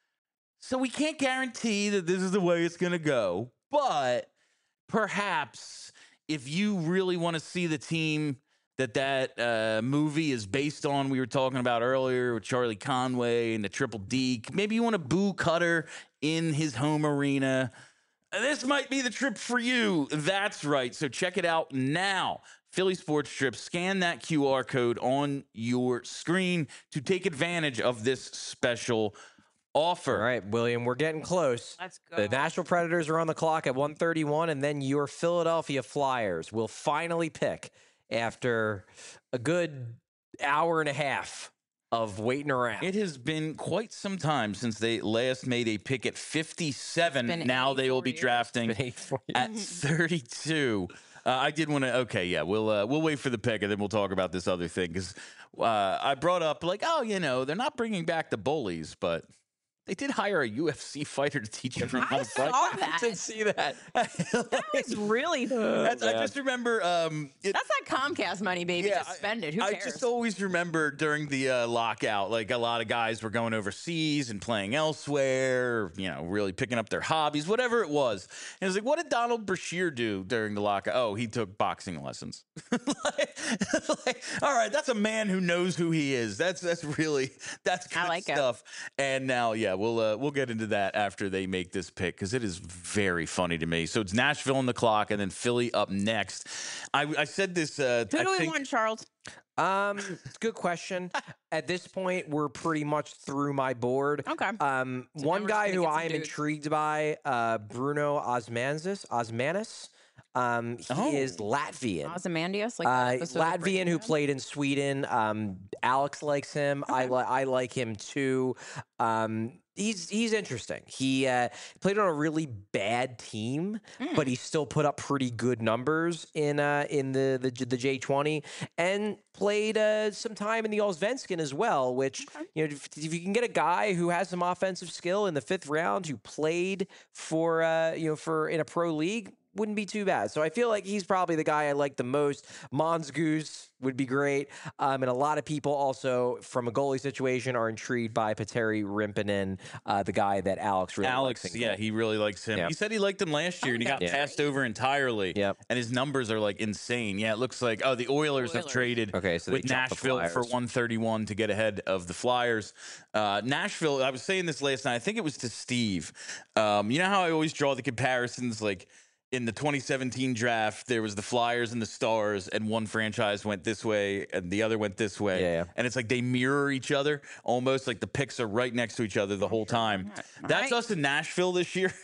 So we can't guarantee that this is the way it's going to go. But perhaps if you really want to see the team that that uh, movie is based on, we were talking about earlier with Charlie Conway and the Triple D, maybe you want to boo Cutter in his home arena, this might be the trip for you. That's right. So check it out now. Philly Sports Trips. Scan that Q R code on your screen to take advantage of this special offer. All right, William, we're getting close. Let's go. The Nashville Predators are on the clock at one thirty-one, and then your Philadelphia Flyers will finally pick after a good hour and a half of waiting around. It has been quite some time since they last made a pick at fifty-seven. Now they will be years. drafting It's been eight, four at thirty-two. Uh, I did want to. Okay, yeah, we'll uh, we'll wait for the pick and then we'll talk about this other thing because uh, I brought up like, oh, you know, they're not bringing back the bullies, but they did hire a U F C fighter to teach everyone how I to fight. saw that. I didn't see that. That was really. That's, I man. just remember. Um, it, That's that Comcast money, baby. Yeah, Just spend it. Who I cares? just always remember during the uh, lockout, like a lot of guys were going overseas and playing elsewhere, you know, really picking up their hobbies, whatever it was. And it was like, what did Donald Brashear do during the lockout? Oh, he took boxing lessons. like, like, all right, that's a man who knows who he is. That's that's really that's good I like it. stuff. And now, yeah, we'll uh, we'll get into that after they make this pick because it is very funny to me. So it's Nashville on the clock, and then Philly up next. I, I said this. Uh, Who I do we think, want, Charles? Um, good question. At this point, we're pretty much through my board. Okay. Um, So one now we're just guy gonna who get some I am dudes. intrigued by, uh, Bruno Osmanzis, Osmanis. Um, he Oh. is Latvian. Ozymandias? Like Uh, that episode of Latvian Breaking who Bad? played in Sweden. Um, Alex likes him. I Okay. li- I like him too. Um, he's he's interesting. He uh, played on a really bad team, Mm. but he still put up pretty good numbers in uh, in the the J- the J twenty and played uh, some time in the Allsvenskan as well. Which Okay. you know, if, if you can get a guy who has some offensive skill in the fifth round who played for uh, you know for in a pro league. Wouldn't be too bad. So I feel like he's probably the guy I like the most. Mons Goose would be great. Um, and a lot of people also, from a goalie situation, are intrigued by Petteri Rimpinen, uh, the guy that Alex really Alex, likes. in yeah, goal. he really likes him. Yeah. He said he liked him last year, and he got Okay. Yeah. passed over entirely. Yep. And his numbers are like insane. Yeah, it looks like oh, the Oilers, have Oilers. traded Okay, so they with jumped the Nashville for Flyers. one thirty-one to get ahead of the Flyers. Uh, Nashville. I was saying this last night. I think it was to Steve. Um, you know how I always draw the comparisons, like. In the twenty seventeen draft, there was the Flyers and the Stars, and one franchise went this way and the other went this way. Yeah, yeah. And it's like they mirror each other, almost like the picks are right next to each other the whole time. All That's right. us in Nashville this year.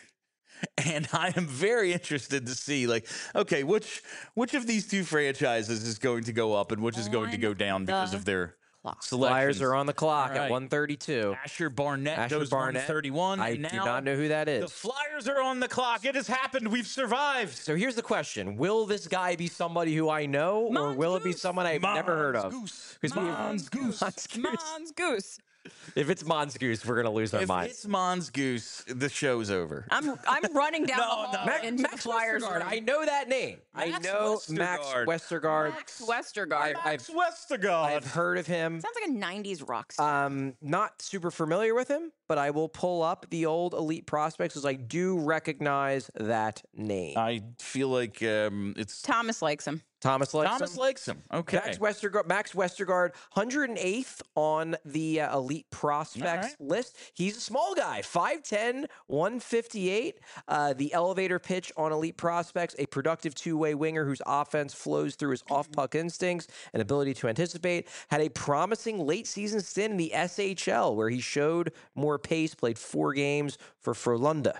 And I am very interested to see, like, okay, which which of these two franchises is going to go up and which is going to On go down because the of their clock. selections. Flyers are on the clock All right. at one thirty-two. Asher Barnett Asher goes Barnett. one thirty-one. I and do now not know who that The is. Flyers are on the clock. It has happened. We've survived. So here's the question: will this guy be somebody who I know, or Mons will it be Goose. someone I've never heard of? Goose. 'Cause we- Mons Goose. Mons Goose. Mons Goose. If it's Mons Goose, we're gonna lose our If minds. it's Mons Goose, the show's over. I'm I'm running down No, the hall no. Max, into Max the Flyers. Westergaard. room. I know that name. I Max know Max Westergaard. Westergaard. Max Westergaard. I- I've- Westergaard. I've heard of him. Sounds like a nineties rock star. Um, not super familiar with him, but I will pull up the old elite prospects as I do recognize that name. I feel like um, it's Thomas likes him. Thomas likes Thomas him. likes him. Okay. Max Westergaard, Max Westergaard, one hundred eighth on the uh, elite prospects right. list. He's a small guy, five ten, one fifty-eight. Uh, the elevator pitch on elite prospects, a productive two-way winger whose offense flows through his off-puck instincts and ability to anticipate. Had a promising late-season stint in the S H L where he showed more pace, played four games for Frölunda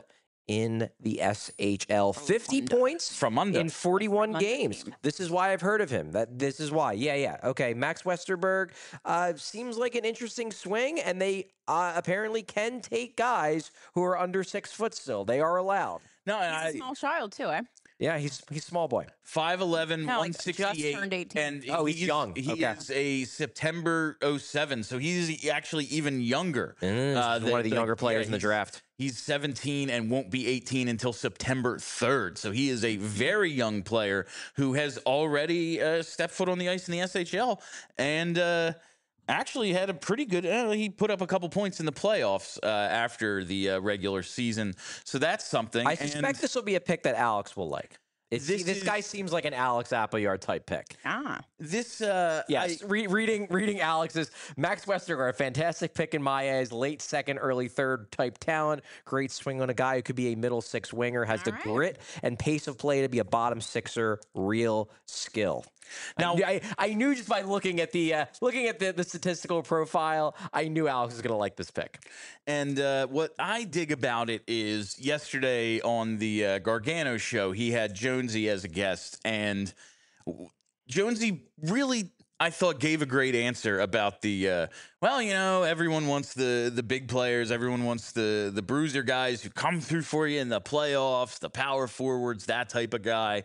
in the S H L. fifty points From under. in forty-one Frölunda games. team. This is why I've heard of him. That this is why. Yeah, yeah. Okay, Max Westerberg uh, seems like an interesting swing, and they uh, apparently can take guys who are under six foot still. They are allowed. No, and He's a I small child too, eh? Yeah, he's he's small boy. five eleven, No, like, one sixty-eight. just turned eighteen. And Oh, he's young. He Okay. is a September oh seven, so he's actually even younger. Mm, uh, one of the than- younger like, players yeah, in the he's- draft. He's seventeen and won't be eighteen until September third. So he is a very young player who has already uh, stepped foot on the ice in the S H L and uh, actually had a pretty good. Uh, he put up a couple points in the playoffs uh, after the uh, regular season. So that's something. I And suspect this will be a pick that Alex will like. It's, This this is- guy seems like an Alex Appleyard type pick. Ah. this, uh, Yes, I- re- reading reading Alex's Max Westergaard, fantastic pick in my eyes, late second, early third type talent, great swing on a guy who could be a middle six winger, has the All right. grit and pace of play to be a bottom sixer, real skill. Now- Now, I, I knew just by looking at the uh, looking at the, the statistical profile, I knew Alex was going to like this pick. And uh, what I dig about it is yesterday on the uh, Gargano show, he had Jonesy as a guest, and w- Jonesy really, I thought gave a great answer about the uh, well, you know, everyone wants the the big players, everyone wants the the bruiser guys who come through for you in the playoffs, the power forwards, that type of guy.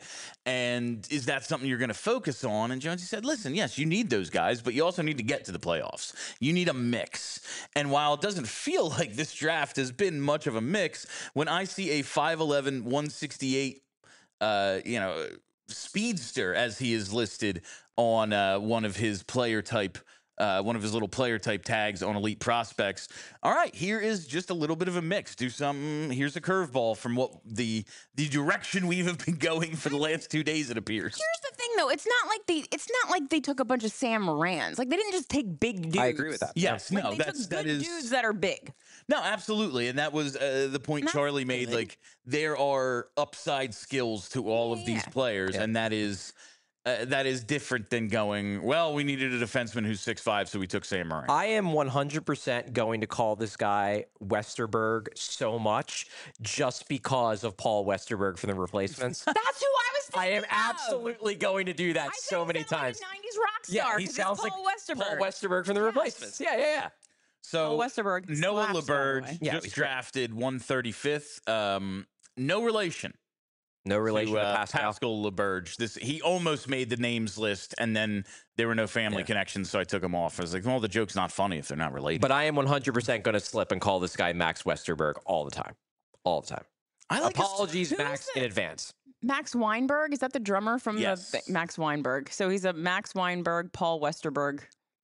And is that something you're going to focus on? And Jonesy said, "Listen, yes, you need those guys, but you also need to get to the playoffs. You need a mix." And while it doesn't feel like this draft has been much of a mix, when I see a five eleven, one sixty-eight, uh, you know, speedster as he is listed on uh, one of his player type, uh, one of his little player type tags on Elite Prospects. All right, here is just a little bit of a mix. Do something. Here's a curveball from what the the direction we have been going for the last two days. It appears. Here's the thing, though. It's not like they. It's not like they took a bunch of Sam Morans. Like they didn't just take big dudes. I agree with that. Yes, Like, no, they that's took that good is dudes that are big. no, absolutely, and that was uh, the point That's Charlie made. good. Like there are upside skills to all of these Yeah. players, Yeah. and that is. Uh, that is different than going, well, we needed a defenseman who's six five, so we took Sam Moran. I am one hundred percent going to call this guy Westerberg so much just because of Paul Westerberg from the replacements. That's who I was I thinking am of. absolutely going to do that I so said many he sounded times. Like a nineties rock Yeah, star. he 'cause sounds it's like Paul Westerberg. Paul Westerberg from the Yes. replacements. Yeah, yeah, yeah. So Paul Westerberg Noah slaps, by the LeBurge way. Yeah, just he's great. drafted one thirty-fifth. Um, no relation. No relation to, to uh, Pascal. Pascal LeBurge. This he almost made the names list, and then there were no family Yeah. connections, so I took him off. I was like, well, the joke's not funny if they're not related. But I am one hundred percent going to slip and call this guy Max Westerberg all the time. All the time. I like his- Apologies, Who's Max, the- in advance. Max Weinberg, is that the drummer from Yes. the Max Weinberg? So he's a Max Weinberg, Paul Westerberg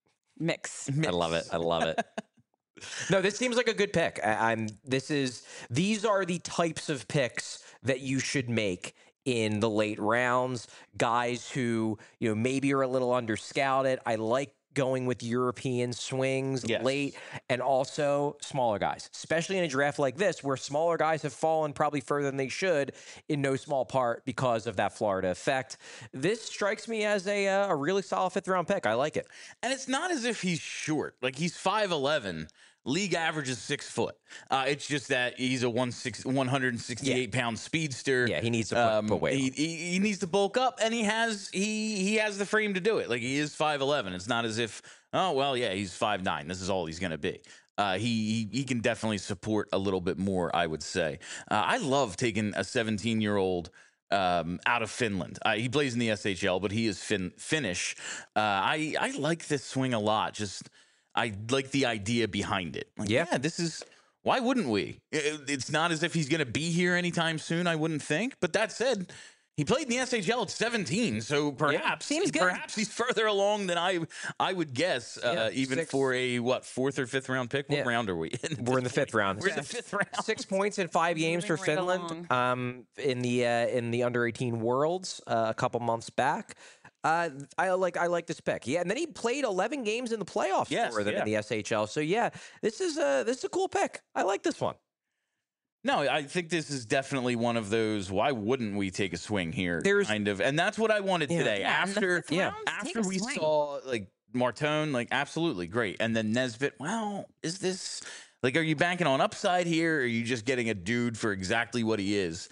mix. I love it. I love it. No, this seems like a good pick. I, I'm. This is. These are the types of picks that you should make in the late rounds. Guys who you know maybe are a little underscouted. I like going with European swings Yes. late, and also smaller guys, especially in a draft like this, where smaller guys have fallen probably further than they should, in no small part because of that Florida effect. This strikes me as a uh, a really solid fifth round pick. I like it. And it's not as if he's short. Like he's five eleven. League average is six foot. Uh, it's just that he's a one six, one sixty-eight pound speedster. Yeah, he needs to put, Um, put weight on. he, he, he needs to bulk up, and he has he he has the frame to do it. Like he is five eleven. It's not as if oh well, yeah, he's five nine. This is all he's going to be. Uh, he, he he can definitely support a little bit more, I would say. Uh, I love taking a seventeen year old. Um, out of Finland. Uh, he plays in the S H L, but he is fin- Finnish. Uh, I I like this swing a lot. Just I like the idea behind it. Like, Yeah. yeah, this is why wouldn't we? It- it's not as if he's going to be here anytime soon. I wouldn't think. But that said, he played in the S H L at seventeen, so perhaps seems good. perhaps he's further along than I I would guess. Uh, Yeah, even six- for a what fourth or fifth round pick. What Yeah. round are we in? We're in the fifth round. We're in the fifth round. Six points in five games for Moving right Finland um, in the uh, in the under eighteen Worlds uh, a couple months back. Uh, I like I like this pick. Yeah, and then he played eleven games in the playoffs Yes, for them yeah. in the S H L. So yeah, this is a this is a cool pick. I like this one. No, I think this is definitely one of those. Why wouldn't we take a swing here? There's- kind of, and that's what I wanted Yeah. today. Yeah, in the after fifth yeah, round, take after a we swing. saw like Martone, like absolutely great, and then Nesbitt. Well, is this like? Are you banking on upside here? Or are you just getting a dude for exactly what he is?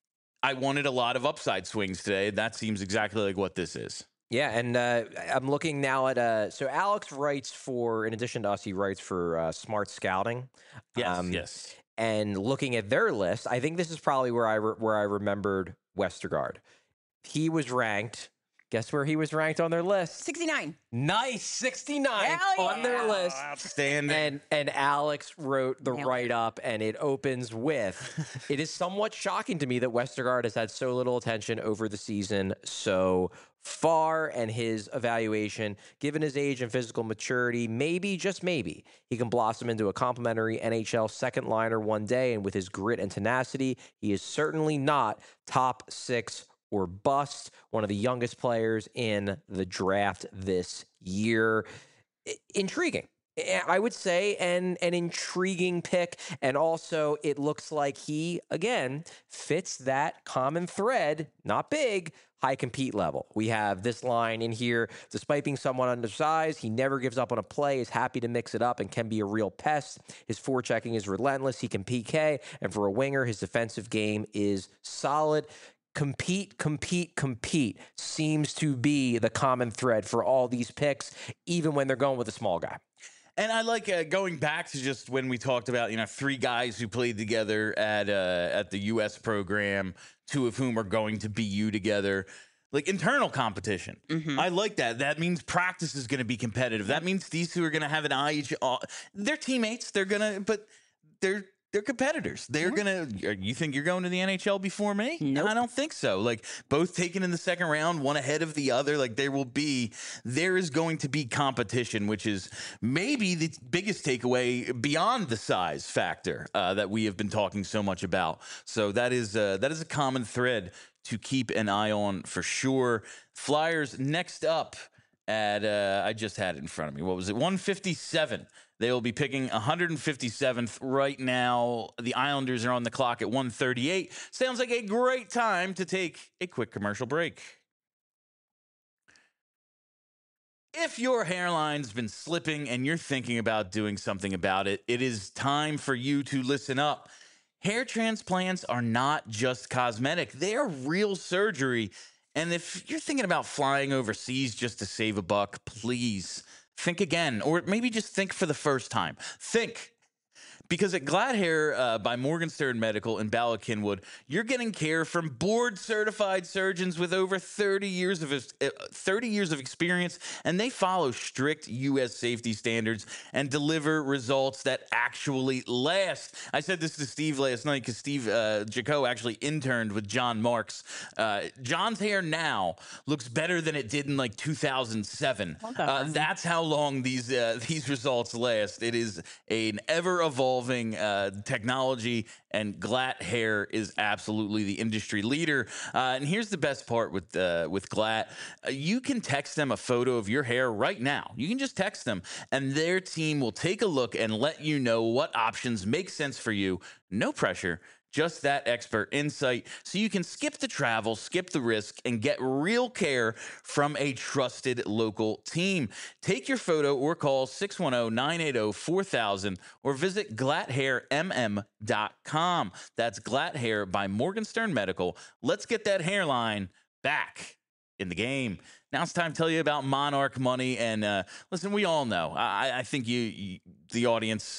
I wanted a lot of upside swings today. That seems exactly like what this is. Yeah, and uh, I'm looking now at uh, so Alex writes for, in addition to us, he writes for uh, Smart Scouting. Yes, Um, yes. And looking at their list, I think this is probably where I re- where I remembered Westergaard. He was ranked. Guess where he was ranked on their list? sixty-nine. Nice, sixty-nine Hell on their yeah. list. Outstanding. And and Alex wrote the Nailed it. write up, and it opens with, "It is somewhat shocking to me that Westergaard has had so little attention over the season so far, and his evaluation, given his age and physical maturity, maybe just maybe he can blossom into a complimentary N H L second liner one day. And with his grit and tenacity, he is certainly not top six or bust. One of the youngest players in the draft this year." I- Intriguing. I- I would say an an intriguing pick, and also it looks like he again fits that common thread. Not big, high compete level. We have this line in here: despite being somewhat undersized, he never gives up on a play, is happy to mix it up, and can be a real pest. His forechecking is relentless. He can P K, and for a winger, his defensive game is solid. compete, compete, compete seems to be the common thread for all these picks, even when they're going with a small guy. And I like uh, going back to just when we talked about, you know, three guys who played together at uh, at the U S program, two of whom are going to B U together. Like internal competition. Mm-hmm. I like that. That means practice is going to be competitive. That means these two are going to have an eye each. Uh, they're teammates. They're going to, but they're they're competitors. They're Yeah. going to. You think you're going to the N H L before me? Nope. I don't think so. Like both taken in the second round, one ahead of the other. Like there will be, there is going to be competition, which is maybe the biggest takeaway beyond the size factor uh, that we have been talking so much about. So that is uh, that is a common thread to keep an eye on for sure. Flyers next up at, uh, I just had it in front of me. What was it? one fifty-seven. They will be picking one hundred fifty-seventh right now. The Islanders are on the clock at one thirty-eight. Sounds like a great time to take a quick commercial break. If your hairline's been slipping and you're thinking about doing something about it, it is time for you to listen up. Hair transplants are not just cosmetic. They are real surgery. And if you're thinking about flying overseas just to save a buck, please think again, or maybe just think for the first time. Think. Because at Glad Hair uh, by Morgenstern Medical in Bala Cynwyd, you're getting care from board-certified surgeons with over thirty years of uh, thirty years of experience, and they follow strict U S safety standards and deliver results that actually last. I said this to Steve last night because Steve uh, Jaco actually interned with John Marks. Uh, John's hair now looks better than it did in like two thousand seven. Okay. Uh, that's how long these uh, these results last. It is an ever-evolving Uh, technology, and Glatt Hair is absolutely the industry leader. Uh, and here's the best part with uh, with Glatt: uh, you can text them a photo of your hair right now. You can just text them, and their team will take a look and let you know what options make sense for you. No pressure. Just that expert insight, so you can skip the travel, skip the risk, and get real care from a trusted local team. Take your photo or call six one zero, nine eight zero, four thousand or visit glatt hair m m dot com. That's Glatt Hair by Morgenstern Medical. Let's get that hairline back in the game. Now it's time to tell you about Monarch Money. And uh, listen, we all know, I, I think you, you, the audience,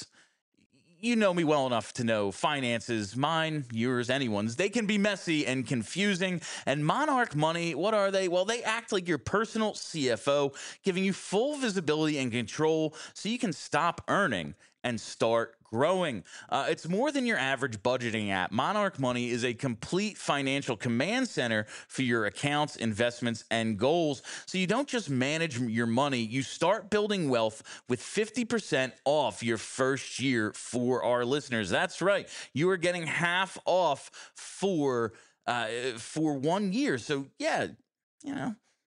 you know me well enough to know finances, mine, yours, anyone's, they can be messy and confusing. And Monarch Money, what are they? Well, they act like your personal C F O, giving you full visibility and control so you can stop earning and start growing. Uh, it's more than your average budgeting app. Monarch Money is a complete financial command center for your accounts, investments, and goals. So you don't just manage your money, you start building wealth with fifty percent off your first year for our listeners. That's right. You are getting half off for uh, for one year. So yeah, you know,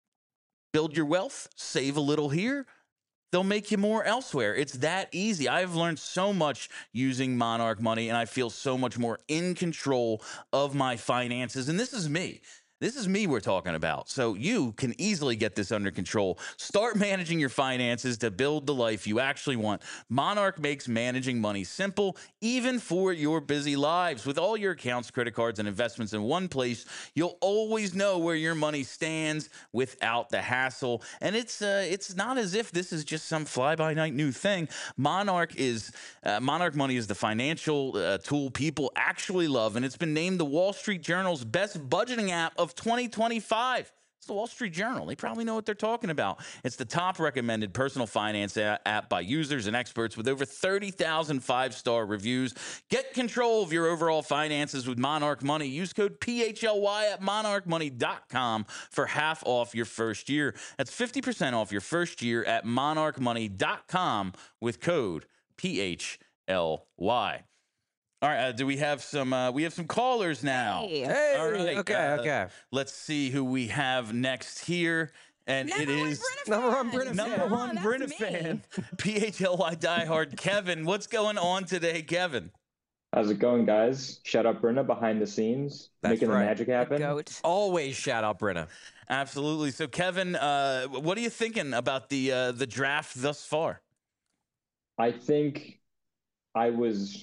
build your wealth, save a little here. They'll make you more elsewhere. It's that easy. I've learned so much using Monarch Money, and I feel so much more in control of my finances. And this is me. This is me we're talking about. So you can easily get this under control. Start managing your finances to build the life you actually want. Monarch makes managing money simple, even for your busy lives. With all your accounts, credit cards, and investments in one place, you'll always know where your money stands without the hassle. And it's uh, it's not as if this is just some fly-by-night new thing. Monarch is uh, Monarch Money is the financial uh, tool people actually love, and it's been named the Wall Street Journal's best budgeting app of twenty twenty-five. It's the Wall Street Journal. They probably know what they're talking about. It's the top recommended personal finance a- app by users and experts with over thirty thousand five-star reviews. Get control of your overall finances with Monarch Money. Use code P H L Y at monarch money dot com for half off your first year. That's fifty percent off your first year at monarch money dot com with code P H L Y. All right, uh, do we have some? Uh, we have some callers now. Hey. Hey, All right, okay, uh, okay. Let's see who we have next here, and Number it one is Brenna Number one fan. Brenna fan. number Oh, one that's Brenna me. fan, P H L Y diehard Kevin. What's going on today, Kevin? How's it going, guys? Shout out Brenda behind the scenes, That's making right. the magic happen. Goat. Always shout out Brenna. Absolutely. So, Kevin, uh, what are you thinking about the uh, the draft thus far? I think I was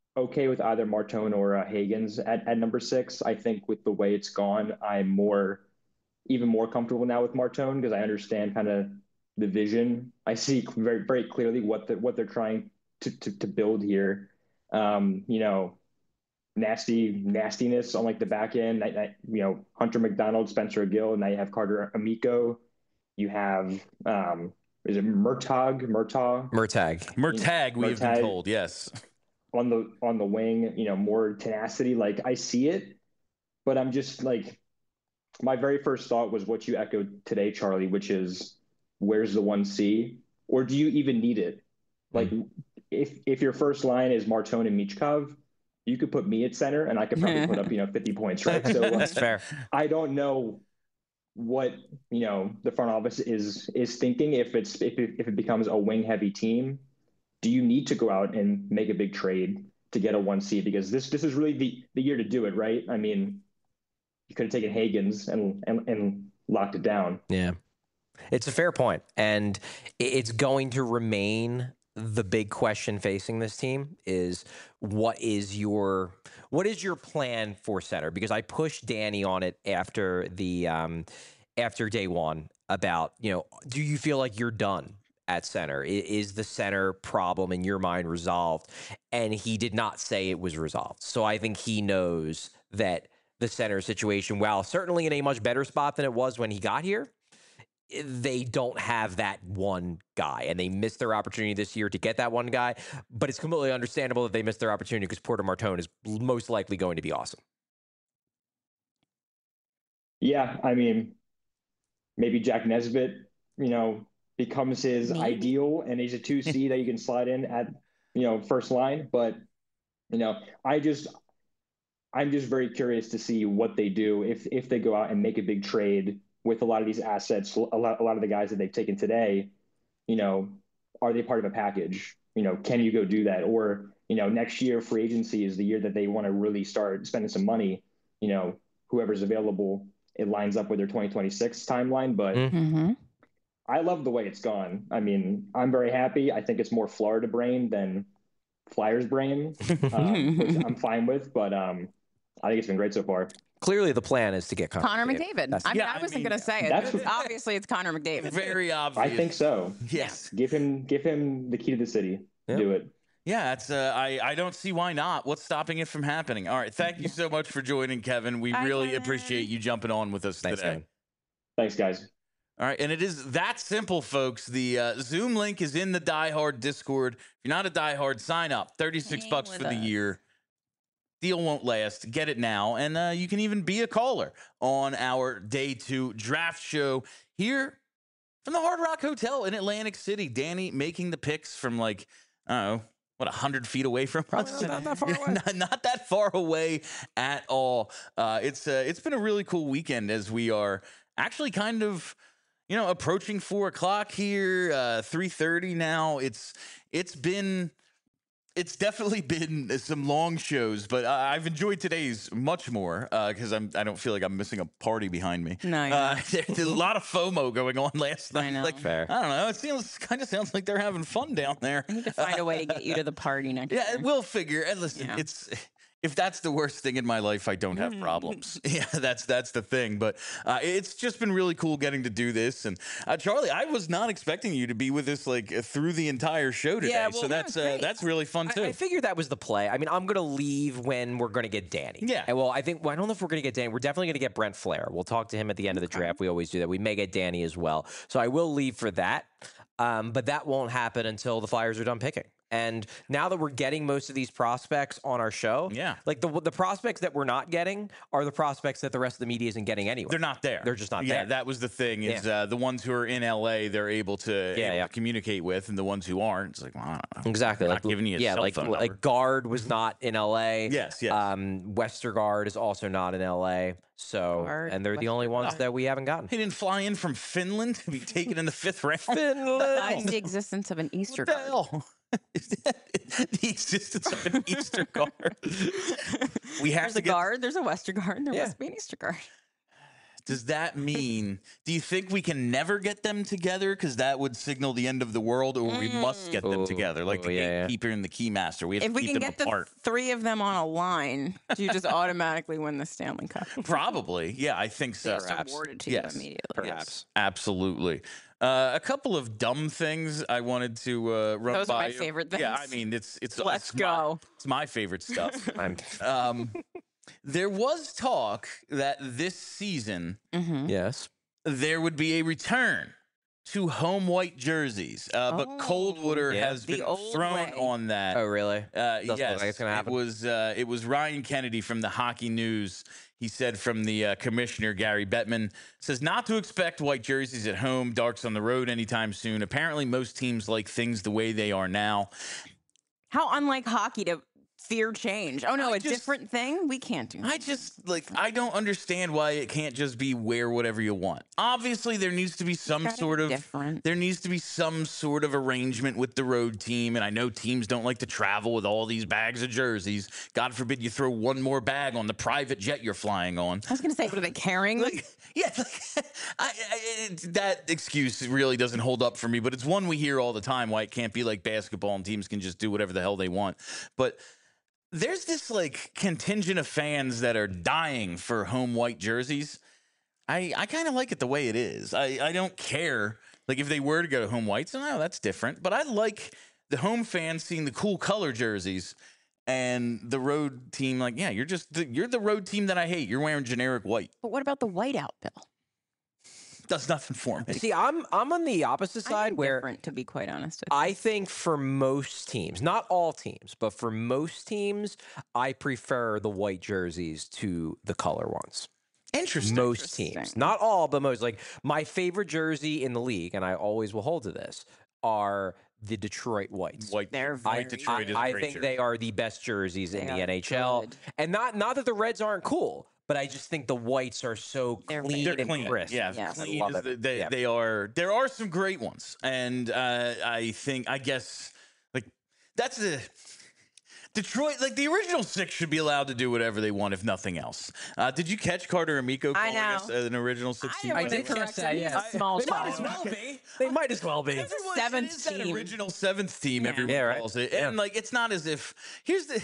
okay with either Martone or uh, Hagens at, at number six. I think with the way it's gone, I'm more even more comfortable now with Martone because I understand kind of the vision. I see very very clearly what the, what they're trying to, to, to build here. Um, you know, nasty nastiness on like the back end. I, I, you know, Hunter McDonald, Spencer Gill, and now you have Carter Amico. You have um, is it Murtag Murtaugh? Murtag. You know, Murtag, we have been Murtag told, yes. on the on the wing. You know, more tenacity. Like I see it, but I'm just like my very first thought was what you echoed today, Charlie, which is where's the one C, or do you even need it? Like Mm. if if your first line is Martone and Michkov, you could put me at center, and I could probably put up you know fifty points, right? So That's like, fair. I don't know what you know the front office is is thinking if it's if it, if it becomes a wing heavy team. Do you need to go out and make a big trade to get a one C? Because this this is really the the year to do it, right? I mean, you could have taken Hagens and and, and locked it down. Yeah. It's a fair point, and it's going to remain the big question facing this team is what is your what is your plan for center? Because I pushed Danny on it after the um, after day one about, you know, do you feel like you're done at center? Is the center problem in your mind resolved? And he did not say it was resolved. So I think he knows that the center situation, while certainly in a much better spot than it was when he got here, they don't have that one guy, and they missed their opportunity this year to get that one guy. But it's completely understandable that they missed their opportunity because Porter Martone is most likely going to be awesome. Yeah, I mean, maybe Jack Nesbitt, you know, becomes his Maybe. ideal, and he's a two C that you can slide in at you know first line. But you know, I just I'm just very curious to see what they do if if they go out and make a big trade with a lot of these assets, a lot a lot of the guys that they've taken today. You know, are they part of a package? You know, can you go do that? Or, you know, next year free agency is the year that they want to really start spending some money. You know, whoever's available, it lines up with their twenty twenty-six timeline. But Mm. Mm-hmm. I love the way it's gone. I mean, I'm very happy. I think it's more Florida brain than Flyers brain, um, which I'm fine with. But um, I think it's been great so far. Clearly, the plan is to get Connor, Connor McDavid. That's- I mean, Yeah, I I wasn't mean, going to say it. that's- It's- obviously, it's Connor McDavid. Very obvious. I think so. Yes. Give him, give him the key to the city. Yeah. Do it. Yeah, it's uh, I I don't see why not. What's stopping it from happening? All right, thank you so much for joining, Kevin. We Bye, really Kevin. appreciate you jumping on with us Thanks, today. Kevin. Thanks, guys. All right, and it is that simple, folks. The uh, Zoom link is in the Die Hard Discord. If you're not a Die Hard, sign up. thirty-six Hang bucks with for the us. year. Deal won't last. Get it now. And uh, you can even be a caller on our day two draft show here from the Hard Rock Hotel in Atlantic City. Danny making the picks from like, I don't know, what, one hundred feet away from Probably us? not that far away. not, not that far away at all. Uh, it's uh, It's been a really cool weekend as we are actually kind of, you know, approaching four o'clock here, uh, three thirty now. It's It's been... It's definitely been some long shows, but uh, I've enjoyed today's much more because uh, I'm I don't feel like I'm missing a party behind me. No, you're uh, not. there's a lot of FOMO going on last night. I know. Like, Fair. I don't know. It seems kind of sounds like they're having fun down there. I need to find a way to get you to the party next Yeah, year. we'll figure. And listen, Yeah. it's if that's the worst thing in my life, I don't have Mm. problems. Yeah, that's that's the thing. But uh, it's just been really cool getting to do this. And uh, Charlie, I was not expecting you to be with us like through the entire show today. Yeah, well, so that's uh, great. that's really fun too. I, I figured that was the play. I mean, I'm going to leave when we're going to get Danny. Yeah. And well, I think, well, I don't know if we're going to get Danny. We're definitely going to get Brent Flair. We'll talk to him at the end of the draft. We always do that. We may get Danny as well. So I will leave for that. Um, but that won't happen until the Flyers are done picking. And now that we're getting most of these prospects on our show, Yeah. like the the prospects that we're not getting are the prospects that the rest of the media isn't getting anyway. They're not there. They're just not yeah, there. that was the thing. Is Yeah. uh, the ones who are in L A, they're able to, Yeah, able yeah. to communicate with, and the ones who aren't, it's like, well, I don't know. Exactly. They're Like not giving you a yeah, cell like phone number. like Guard was not in L A. Yes, yes. Um, Westergaard is also not in L A. So Guard, and they're the only ones that we haven't gotten. He didn't fly in from Finland to be taken in the fifth round. Besides the existence of an Easter What the card. hell? Is that the existence of an Easter guard? We have There's to a get guard, there's a Westergaard, there Yeah. must be an Easter guard. does that mean, do you think we can never get them together? Because that would signal the end of the world, or we must get them Ooh, together, like ooh, the yeah, yeah. gatekeeper and the keymaster. We have If to we keep can them get the apart. three of them on a line, do you just automatically win the Stanley Cup? Probably. Yeah, I think so. Just Perhaps. awarded to Yes. you immediately. Perhaps. Absolutely. Uh, a couple of dumb things I wanted to uh, run Those by are my you. favorite Yeah, I things. mean, it's it's Let's it's my- go. it's my favorite stuff. I'm, um, there was talk that this season Mm-hmm. yes. there would be a return to home white jerseys, uh, but Coldwater Oh, yeah. has the been old thrown way. on that. Oh, really? Uh, Doesn't look yes, like it's gonna happen. it was uh, it was Ryan Kennedy from the Hockey News. He said from the uh, commissioner, Gary Bettman, says not to expect white jerseys at home, darks on the road anytime soon. Apparently, most teams like things the way they are now. How unlike hockey to fear change. Oh, no, I a just- different thing? We can't do that. I just like I don't understand why it can't just be wear whatever you want. Obviously, there needs to be some Gotta be sort of different. there needs to be some sort of arrangement with the road team. And I know teams don't like to travel with all these bags of jerseys. God forbid you throw one more bag on the private jet you're flying on. I was going to say, what are they carrying? Like, yeah, like, I, I, it, that excuse really doesn't hold up for me. But it's one we hear all the time. Why it can't be like basketball and teams can just do whatever the hell they want. But there's this like contingent of fans that are dying for home white jerseys. I, I kind of like it the way it is. I, I don't care. Like if they were to go to home whites, no, that's different. But I like the home fans seeing the cool color jerseys and the road team. Like, yeah, you're just the, you're the road team that I hate. You're wearing generic white. But what about the whiteout, Bill? Does nothing for me. See, I'm I'm on the opposite I'm side where indifferent, to be quite honest. with I think for most teams, not all teams, but for most teams, I prefer the white jerseys to the color ones. Interesting. Most teams, Interesting. not all, but most. Like my favorite jersey in the league, and I always will hold to this, are the Detroit Whites. White, They're white very Detroit is a I great think jersey. they are the best jerseys in They the are N H L, good. and not not that the Reds aren't cool, but I just think the whites are so They're clean They're and clean. crisp. Yeah, Yes. I clean love is it. the- they, Yeah. they are. There are some great ones, and uh, I think I guess like that's the Detroit. Like the original six should be allowed to do whatever they want, if nothing else. Uh, did you catch Carter Amico I calling us know. an original six I team? didn't I want to did correct catch that, him. He's yeah. a small They might as child. well be. They might as well be. Everyone- seventh it is that team. original seventh team. Yeah. Everyone Yeah, right. calls it, Yeah. and like it's not as if here's the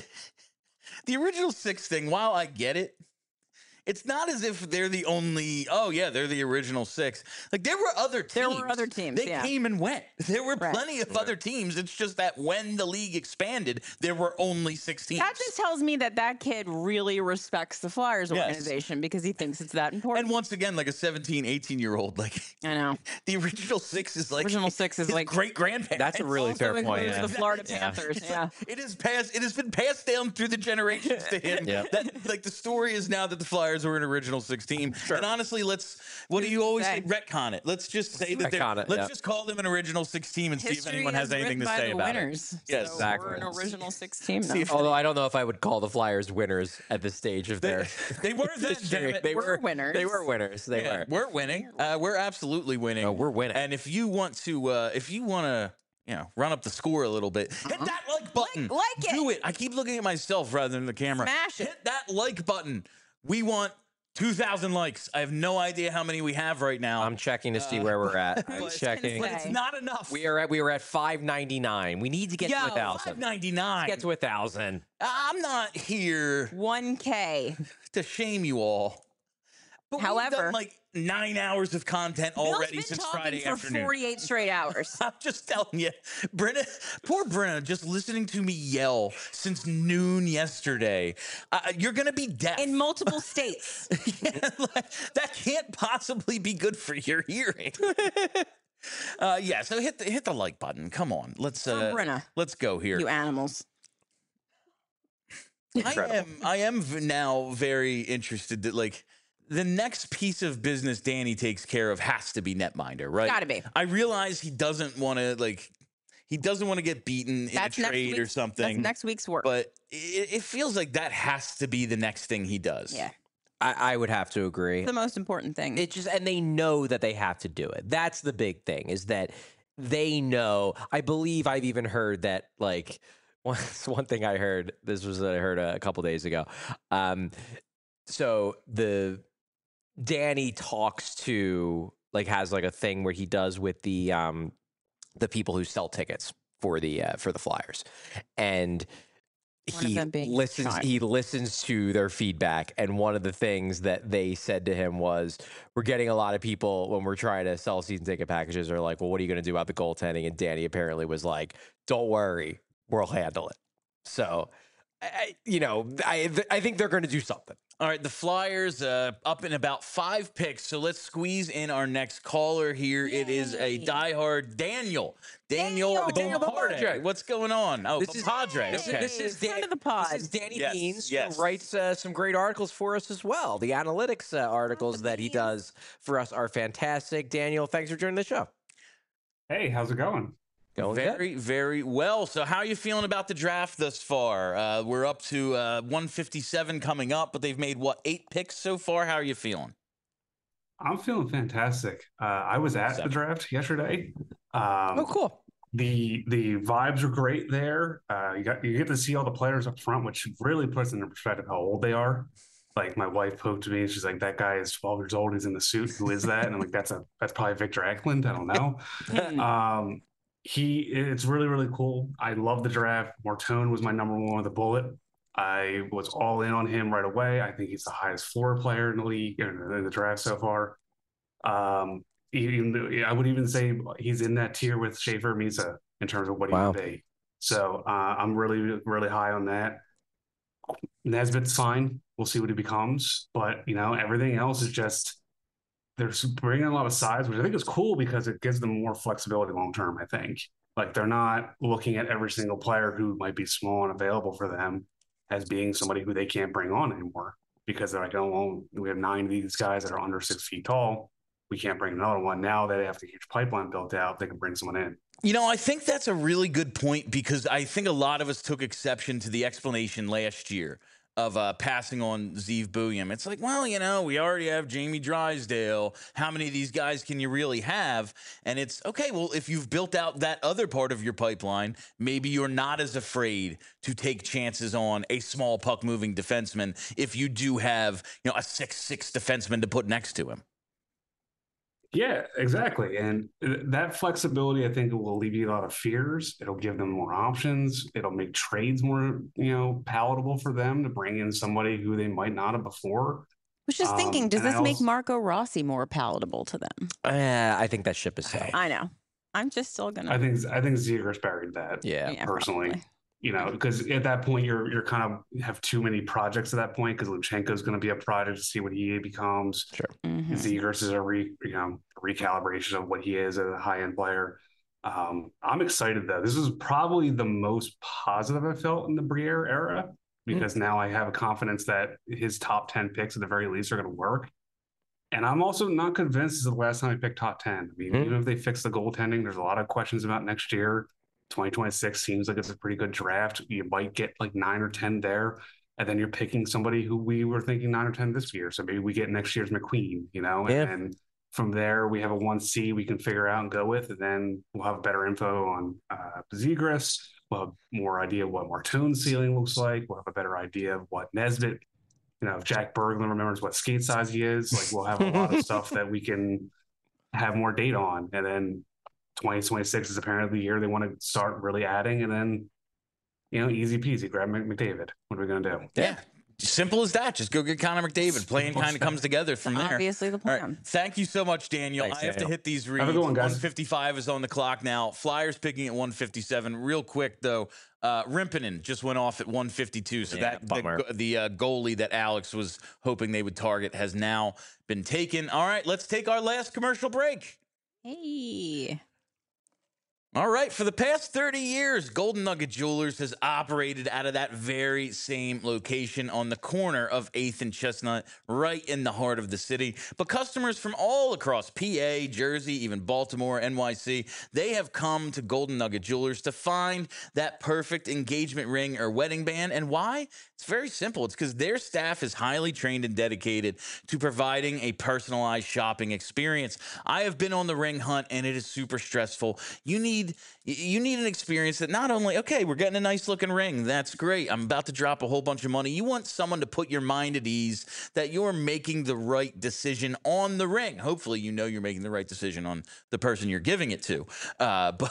the original six thing. While I get it. It's not as if they're the only. Oh yeah, they're the original six. Like there were other teams. There were other teams, They yeah. came and went. There were Right. plenty of other teams. It's just that when the league expanded, there were only six teams. That just tells me that that kid really respects the Flyers Yes. organization because he thinks it's that important. And once again, like a seventeen, eighteen year old, like I know. the original six is like Original six is his like- great grandparents. That's a really Also fair point. includes Yeah. the Florida Yeah. Panthers. It's Yeah. like, it is passed. It has been passed down through the generations to him. Yeah. That like the story is now that the Flyers were an original six team. And honestly, let's. What do you always say? say? Retcon it. Let's just say that. they're- Retcon it, Let's yeah. just call them an original six team and see if History anyone has is anything to written by say the about winners. it. Yes, So exactly. We're an original six team now. See if- Although I don't know if I would call the Flyers winners at this stage of their They were then. history. damn it. They We're were winners. They were winners. They Yeah, were. we're winning. Uh, we're absolutely winning. Oh, we're winning. And if you want to, uh, if you want to, you know, run up the score a little bit, hit that like button. Uh-huh. Like- like it. Do it. I keep looking at myself rather than the camera. Smash it. Hit that like button. We want two thousand likes. I have no idea how many we have right now. I'm checking to see where we're at. I'm but- checking. but it's not enough. We are at we were at five ninety-nine. We need to get yeah, to a five thousand. ninety-nine. Get to a thousand. I'm not here one K. to shame you all. But we've However- done like nine hours of content already Bill's been since talking Friday for afternoon. forty-eight straight hours. I'm just telling you, Brenna, poor Brenna, just listening to me yell since noon yesterday. Uh, you're going to be deaf. In multiple states. Yeah, like, that can't possibly be good for your hearing. uh, yeah, so hit the hit the like button. Come on, let's uh, Brenna. let's go here. You animals. I am I am v- now very interested that like the next piece of business Danny takes care of has to be netminder, right? Gotta be. I realize he doesn't want to like he doesn't want to get beaten in That's a next trade or week's- something. That's next week's work. but it, it feels like that has to be the next thing he does. yeah. I, I would have to agree. The most important thing. It just and they know that they have to do it. That's the big thing is that they know. I believe I've even heard that like one, one thing I heard. This was what I heard a, a couple days ago. Um, so the Danny talks to, like, has like a thing where he does with the um the people who sell tickets for the uh, for the Flyers, and One of he them being your listens child. he listens to their feedback. And one of the things that they said to him was, we're getting a lot of people when we're trying to sell season ticket packages are like, well, what are you going to do about the goaltending? And Danny apparently was like, don't worry, we'll handle it. So I, you know, I I think they're going to do something. All right, the Flyers uh, up in about five picks, so let's squeeze in our next caller here. Yay. It is a diehard Daniel. Daniel, Daniel. Daniel Bapadre. What's going on? Oh, This is Padre. This, Okay. this is Friend Dan, of the pod. This is Danny Yes, Beans, yes. who writes uh, some great articles for us as well. The analytics uh, articles that he does for us are fantastic. Daniel, thanks for joining the show. Hey, how's it going? Going very, good. very well. So how are you feeling about the draft thus far? Uh, we're up to uh, one fifty-seven coming up, but they've made, what, eight picks so far? How are you feeling? I'm feeling fantastic. Uh, I was at Seven. the draft yesterday. Um, Oh, cool. The the vibes are great there. Uh, you got you get to see all the players up front, which really puts into perspective how old they are. Like my wife poked me, she's like, "That guy is twelve years old. He's in the suit. Who is that?" And I'm like, "That's a that's probably Victor Eklund. I don't know." um, he it's really really cool. I love the draft. Martone was my number one with a bullet. I was all in on him right away. I think he's the highest floor player in the league in the draft so far. Um, even I would even say he's in that tier with Schaefer Misa in terms of what he Wow. would be. So uh, I'm really really high on that. Nesbitt's fine. We'll see what he becomes, but you know everything else is just they're bringing a lot of size, which I think is cool because it gives them more flexibility long term. I think like they're not looking at every single player who might be small and available for them as being somebody who they can't bring on anymore because they're like, oh, well, we have nine of these guys that are under six feet tall. We can't bring another one. Now that they have the huge pipeline built out, they can bring someone in. You know, I think that's a really good point because I think a lot of us took exception to the explanation last year of uh, passing on Zeev Buium. It's like, well, you know, we already have Jamie Drysdale. How many of these guys can you really have? And it's, okay, well, if you've built out that other part of your pipeline, maybe you're not as afraid to take chances on a small puck-moving defenseman if you do have, you know, a six six defenseman to put next to him. Yeah, exactly. And that flexibility, I think, will alleviate a lot of fears. It'll give them more options. It'll make trades more, you know, palatable for them to bring in somebody who they might not have before. I was just Um, thinking, does and I this make also- Marco Rossi more palatable to them? Uh, I think that ship is sailed. I know. I'm just still gonna. I think I think Zegers buried that. Yeah. Yeah, personally. probably. You know, because at that point you're you're kind of have too many projects at that point because Luchenko's going to be a project to see what he becomes. Sure. Mhm. Zegers is a re, you know recalibration of what he is as a high end player. Um, I'm excited though. This is probably the most positive I felt in the Briere era because now I have a confidence that his top ten picks at the very least are going to work. And I'm also not convinced this is the last time I picked top ten. I mean, Mhm. even if they fix the goaltending, there's a lot of questions about next year. twenty twenty-six seems like it's a pretty good draft. You might get like nine or ten there, and then you're picking somebody who we were thinking nine or ten this year. So maybe we get next year's McQueen, you know, Yeah. and then from there we have a one C we can figure out and go with, and then we'll have better info on uh, Zegras. We'll have more idea of what Martone's ceiling looks like. We'll have a better idea of what Nesbitt, you know, if Jack Berglund remembers what skate size he is. Like we'll have a lot of stuff that we can have more data on, and then twenty twenty-six is apparently the year they want to start really adding, and then, you know, easy peasy, grab McDavid. What are we going to do? Yeah. Simple as that. Just go get Connor McDavid. Playing Simple kind as of comes together from there. Obviously the All right. plan. Thank you so much, Daniel. Thanks, I have Daniel. to hit these reads. Have a good one, guys. one fifty-five is on the clock now. Flyers picking at one fifty-seven. Real quick, though, uh, Rimpinen just went off at one fifty-two. So Yeah, that bummer. the, the uh, goalie that Alex was hoping they would target has now been taken. All right, let's take our last commercial break. Hey. All right, for the past thirty years, Golden Nugget Jewelers has operated out of that very same location on the corner of eighth and Chestnut, right in the heart of the city. But customers from all across P A, Jersey, even Baltimore, N Y C, they have come to Golden Nugget Jewelers to find that perfect engagement ring or wedding band. And why? It's very simple. It's because their staff is highly trained and dedicated to providing a personalized shopping experience. I have been on the ring hunt, and it is super stressful. You need need you need an experience that not only, okay, we're getting a nice looking ring. That's great. I'm about to drop a whole bunch of money. You want someone to put your mind at ease that you're making the right decision on the ring. Hopefully, you know you're making the right decision on the person you're giving it to. Uh, but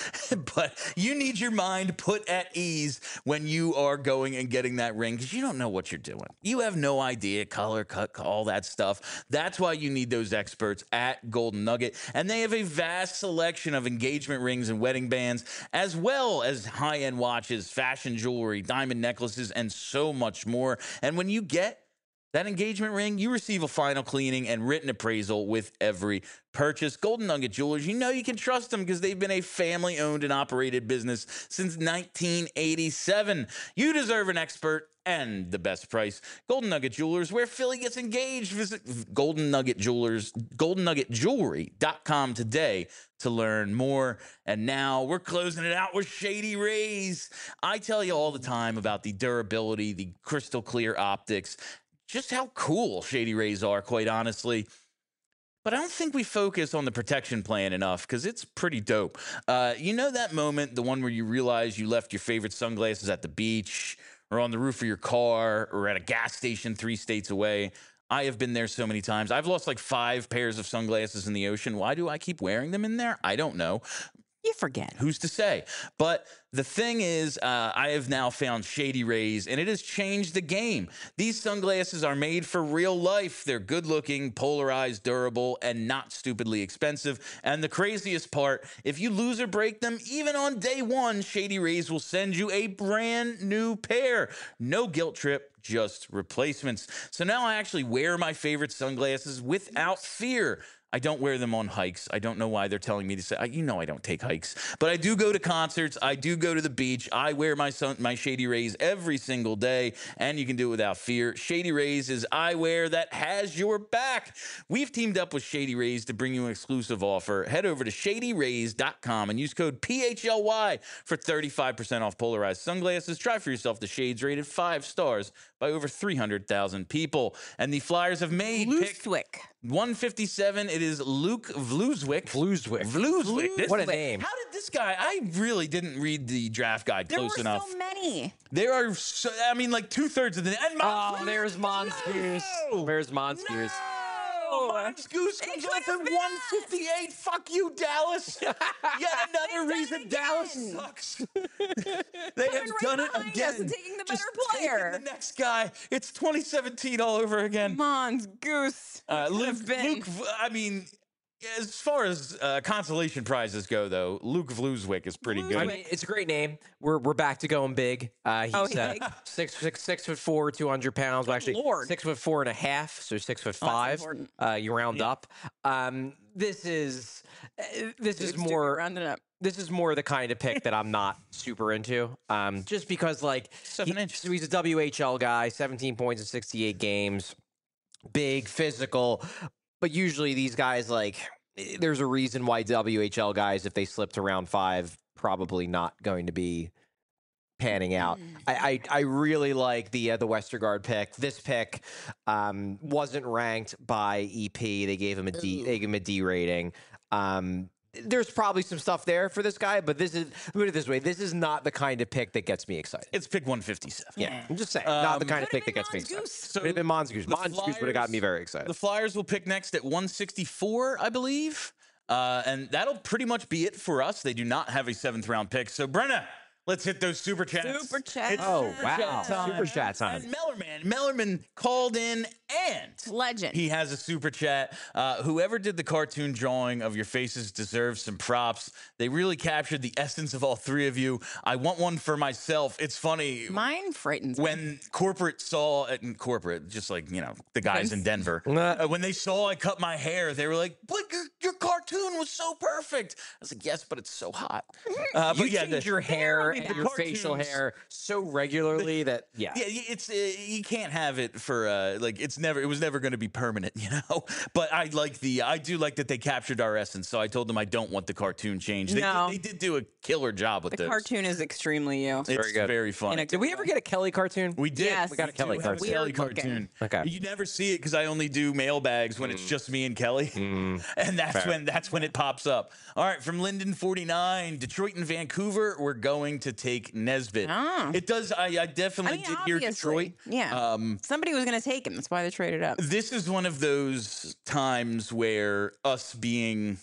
but you need your mind put at ease when you are going and getting that ring, because you don't know what you're doing. You have no idea, color, cut, all that stuff. That's why you need those experts at Golden Nugget. And they have a vast selection of engagement rings and wedding bands, as well as high-end watches, fashion jewelry, diamond necklaces, and so much more. And when you get that engagement ring, you receive a final cleaning and written appraisal with every purchase. Golden Nugget Jewelers, you know you can trust them because they've been a family-owned and operated business since nineteen eighty-seven. You deserve an expert and the best price. Golden Nugget Jewelers, where Philly gets engaged. Visit Golden Nugget Jewelers, golden nugget jewelry dot com today to learn more. And now we're closing it out with Shady Rays. I tell you all the time about the durability, the crystal clear optics, just how cool Shady Rays are, quite honestly. But I don't think we focus on the protection plan enough, because it's pretty dope. Uh, you know that moment, the one where you realize you left your favorite sunglasses at the beach or on the roof of your car or at a gas station three states away? I have been there so many times. I've lost like five pairs of sunglasses in the ocean. Why do I keep wearing them in there? I don't know. You forget. Who's to say? But the thing is, uh, I have now found Shady Rays, and it has changed the game. These sunglasses are made for real life. They're good-looking, polarized, durable, and not stupidly expensive. And the craziest part, if you lose or break them, even on day one, Shady Rays will send you a brand new pair. No guilt trip, just replacements. So now I actually wear my favorite sunglasses without fear. I don't wear them on hikes. I don't know why they're telling me to say, you know I don't take hikes. But I do go to concerts. I do go to the beach. I wear my sun, my Shady Rays every single day, and you can do it without fear. Shady Rays is eyewear that has your back. We've teamed up with Shady Rays to bring you an exclusive offer. Head over to shady rays dot com and use code P H L Y for thirty-five percent off polarized sunglasses. Try for yourself the shades rated five stars by over three hundred thousand people. And the Flyers have made Vluswick. one fifty-seven. It is Luke Vluswick. Vluswick. Vluswick. This- What a name. How did this guy? I really didn't read the draft guide There close were enough. so many. There are, so, I mean, like two thirds of the. And Oh, Mons- there's Mongoose. No! There's Mongoose. No! Mongoose comes off at one fifty-eight. Fuck you, Dallas. Yet another They've reason done it Dallas again. sucks. They have right done it behind us again. and taking the Just better taking player. the next guy. It's twenty seventeen all over again. Mons Goose. Uh, Could Luke, have been. Luke, I mean, as far as uh, consolation prizes go, though, Luke Vluswick is pretty good. I mean, it's a great name. We're we're back to going big. Uh, he's Oh, uh, big? six six six foot four, two hundred pounds. Well, actually, Lord. six foot four and a half, so six foot Oh, that's five. important. Uh, you round up. Um, this is uh, this is more rounded up. this is more the kind of pick that I'm not super into. Um, just because like Seven he- inches. so he's a W H L guy, seventeen points in sixty-eight games, big, physical. But usually these guys, like, there's a reason why W H L guys, if they slip to round five, probably not going to be panning out. I, I I really like the uh, the Westergaard pick. This pick um, wasn't ranked by E P. They gave him a D. They gave him a D rating. Um, there's probably some stuff there for this guy, but this is put it this way: this is not the kind of pick that gets me excited. It's pick one fifty-seven. Yeah, I'm just saying, not the Um, kind of Could've pick that been gets me excited. Mongoose. So Could have been Mongoose. the Mongoose would have got me Flyers- very excited. The Flyers will pick next at one sixty-four, I believe. Uh, and that'll pretty much be it for us. They do not have a seventh round pick. So, Brenna, let's hit those super chats. Super chats. It's Oh, super wow. chat time. Super chat time. And Mellerman, Mellerman called in and Legend. he has a super chat. Uh, whoever did the cartoon drawing of your faces deserves some props. They really captured the essence of all three of you. I want one for myself. It's funny. Mine frightens me. When corporate saw it in corporate, just like, you know, the guys in Denver, Nah. uh, when they saw I cut my hair, they were like, but your, your cartoon was so perfect. I was like, yes, but it's so hot. Uh, You but yeah, change the- your hair the and your facial cartoons- hair so regularly that yeah. Yeah, y- it's uh, you can't have it for uh, like it's never it was never going to be permanent, you know. But I like the I do like that they captured our essence. So I told them I don't want the cartoon changed. They, No. did, they did do a killer job with the this. cartoon is extremely you. It's very good. very funny. In a Did we ever get a Kelly cartoon? We did. Yes. We We got a do Kelly have cartoon. Kelly Weird looking. cartoon. Okay. You never see it because I only do mailbags when it's just me and Kelly, and that's Fair. when that's when it pops up. All right, from Linden forty-nine, Detroit and Vancouver, we're going to take Nesbitt. Oh. It does, I, I definitely I mean, did hear obviously, Detroit. Yeah. Um, Somebody was going to take him. That's why they traded up. This is one of those times where us being,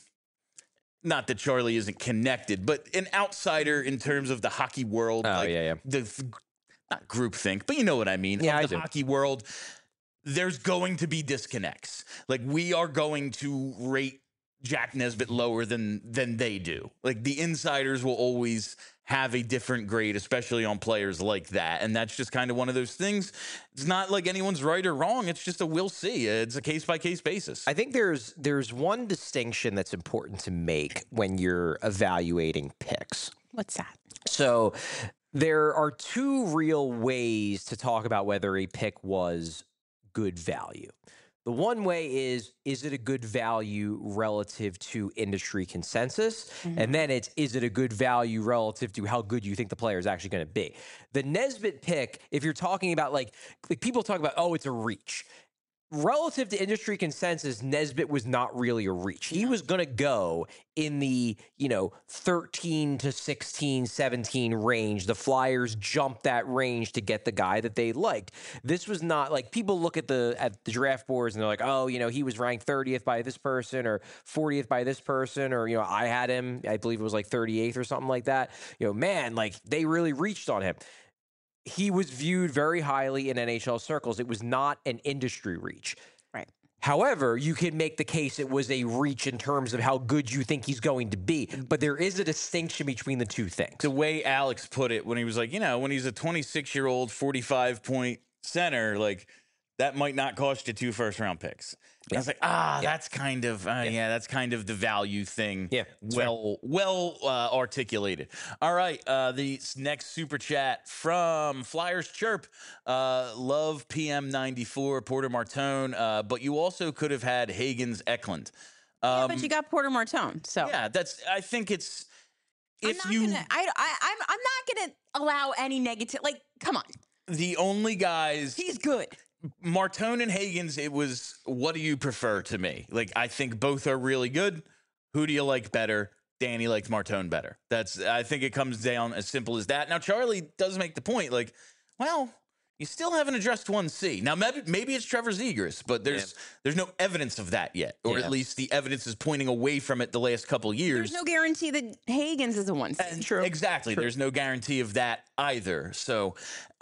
not that Charlie isn't connected, but an outsider in terms of the hockey world. Oh, like yeah, yeah. The, not groupthink, but you know what I mean. Yeah, of I the do. hockey world, there's going to be disconnects. Like, we are going to rate Jack Nesbitt lower than than they do. Like, the insiders will always have a different grade, especially on players like that. And that's just kind of one of those things. It's not like anyone's right or wrong. It's just a we'll see. It's a case by case basis. I think there's there's one distinction that's important to make when you're evaluating picks. What's that? So there are two real ways to talk about whether a pick was good value. The one way is, is it a good value relative to industry consensus? Mm-hmm. And then it's, is it a good value relative to how good you think the player is actually going to be? The Nesbitt pick, if you're talking about like, like people talk about, oh, it's a reach. Relative to industry consensus, Nesbitt was not really a reach. He was going to go in the, you know, thirteen to sixteen, seventeen range. The Flyers jumped that range to get the guy that they liked. This was not like people look at the at the draft boards and they're like, oh, you know, he was ranked thirtieth by this person or fortieth by this person, or, you know, I had him, I believe it was like thirty-eighth or something like that. You know, man, like they really reached on him. He was viewed very highly in N H L circles. It was not an industry reach. Right. However, you could make the case it was a reach in terms of how good you think he's going to be. But there is a distinction between the two things. The way Alex put it when he was like, you know, when he's a twenty-six-year-old, forty-five-point center, like, that might not cost you two first-round picks. Yeah. I was like, ah, yeah. that's kind of, uh, yeah. yeah, that's kind of the value thing. Yeah, well, right. well uh, articulated. All right, uh, the next super chat from Flyers Chirp. Uh, love P M ninety-four, Porter Martone, uh, but you also could have had Hagens Eklund. Um, yeah, but you got Porter Martone, so yeah, that's. I think it's if I'm you. Gonna, I, I, I'm, I'm not going to allow any negative. Like, come on. The only guys. He's good. Martone and Hagens, it was, what do you prefer to me? Like, I think both are really good. Who do you like better? Danny likes Martone better. That's, I think it comes down as simple as that. Now, Charlie does make the point, like, well, you still haven't addressed one C. Now, maybe, maybe it's Trevor Zegras, but there's yeah. there's no evidence of that yet. Or yeah. at least the evidence is pointing away from it the last couple years. There's no guarantee that Hagens is a one C. And True. Exactly. True. There's no guarantee of that either. So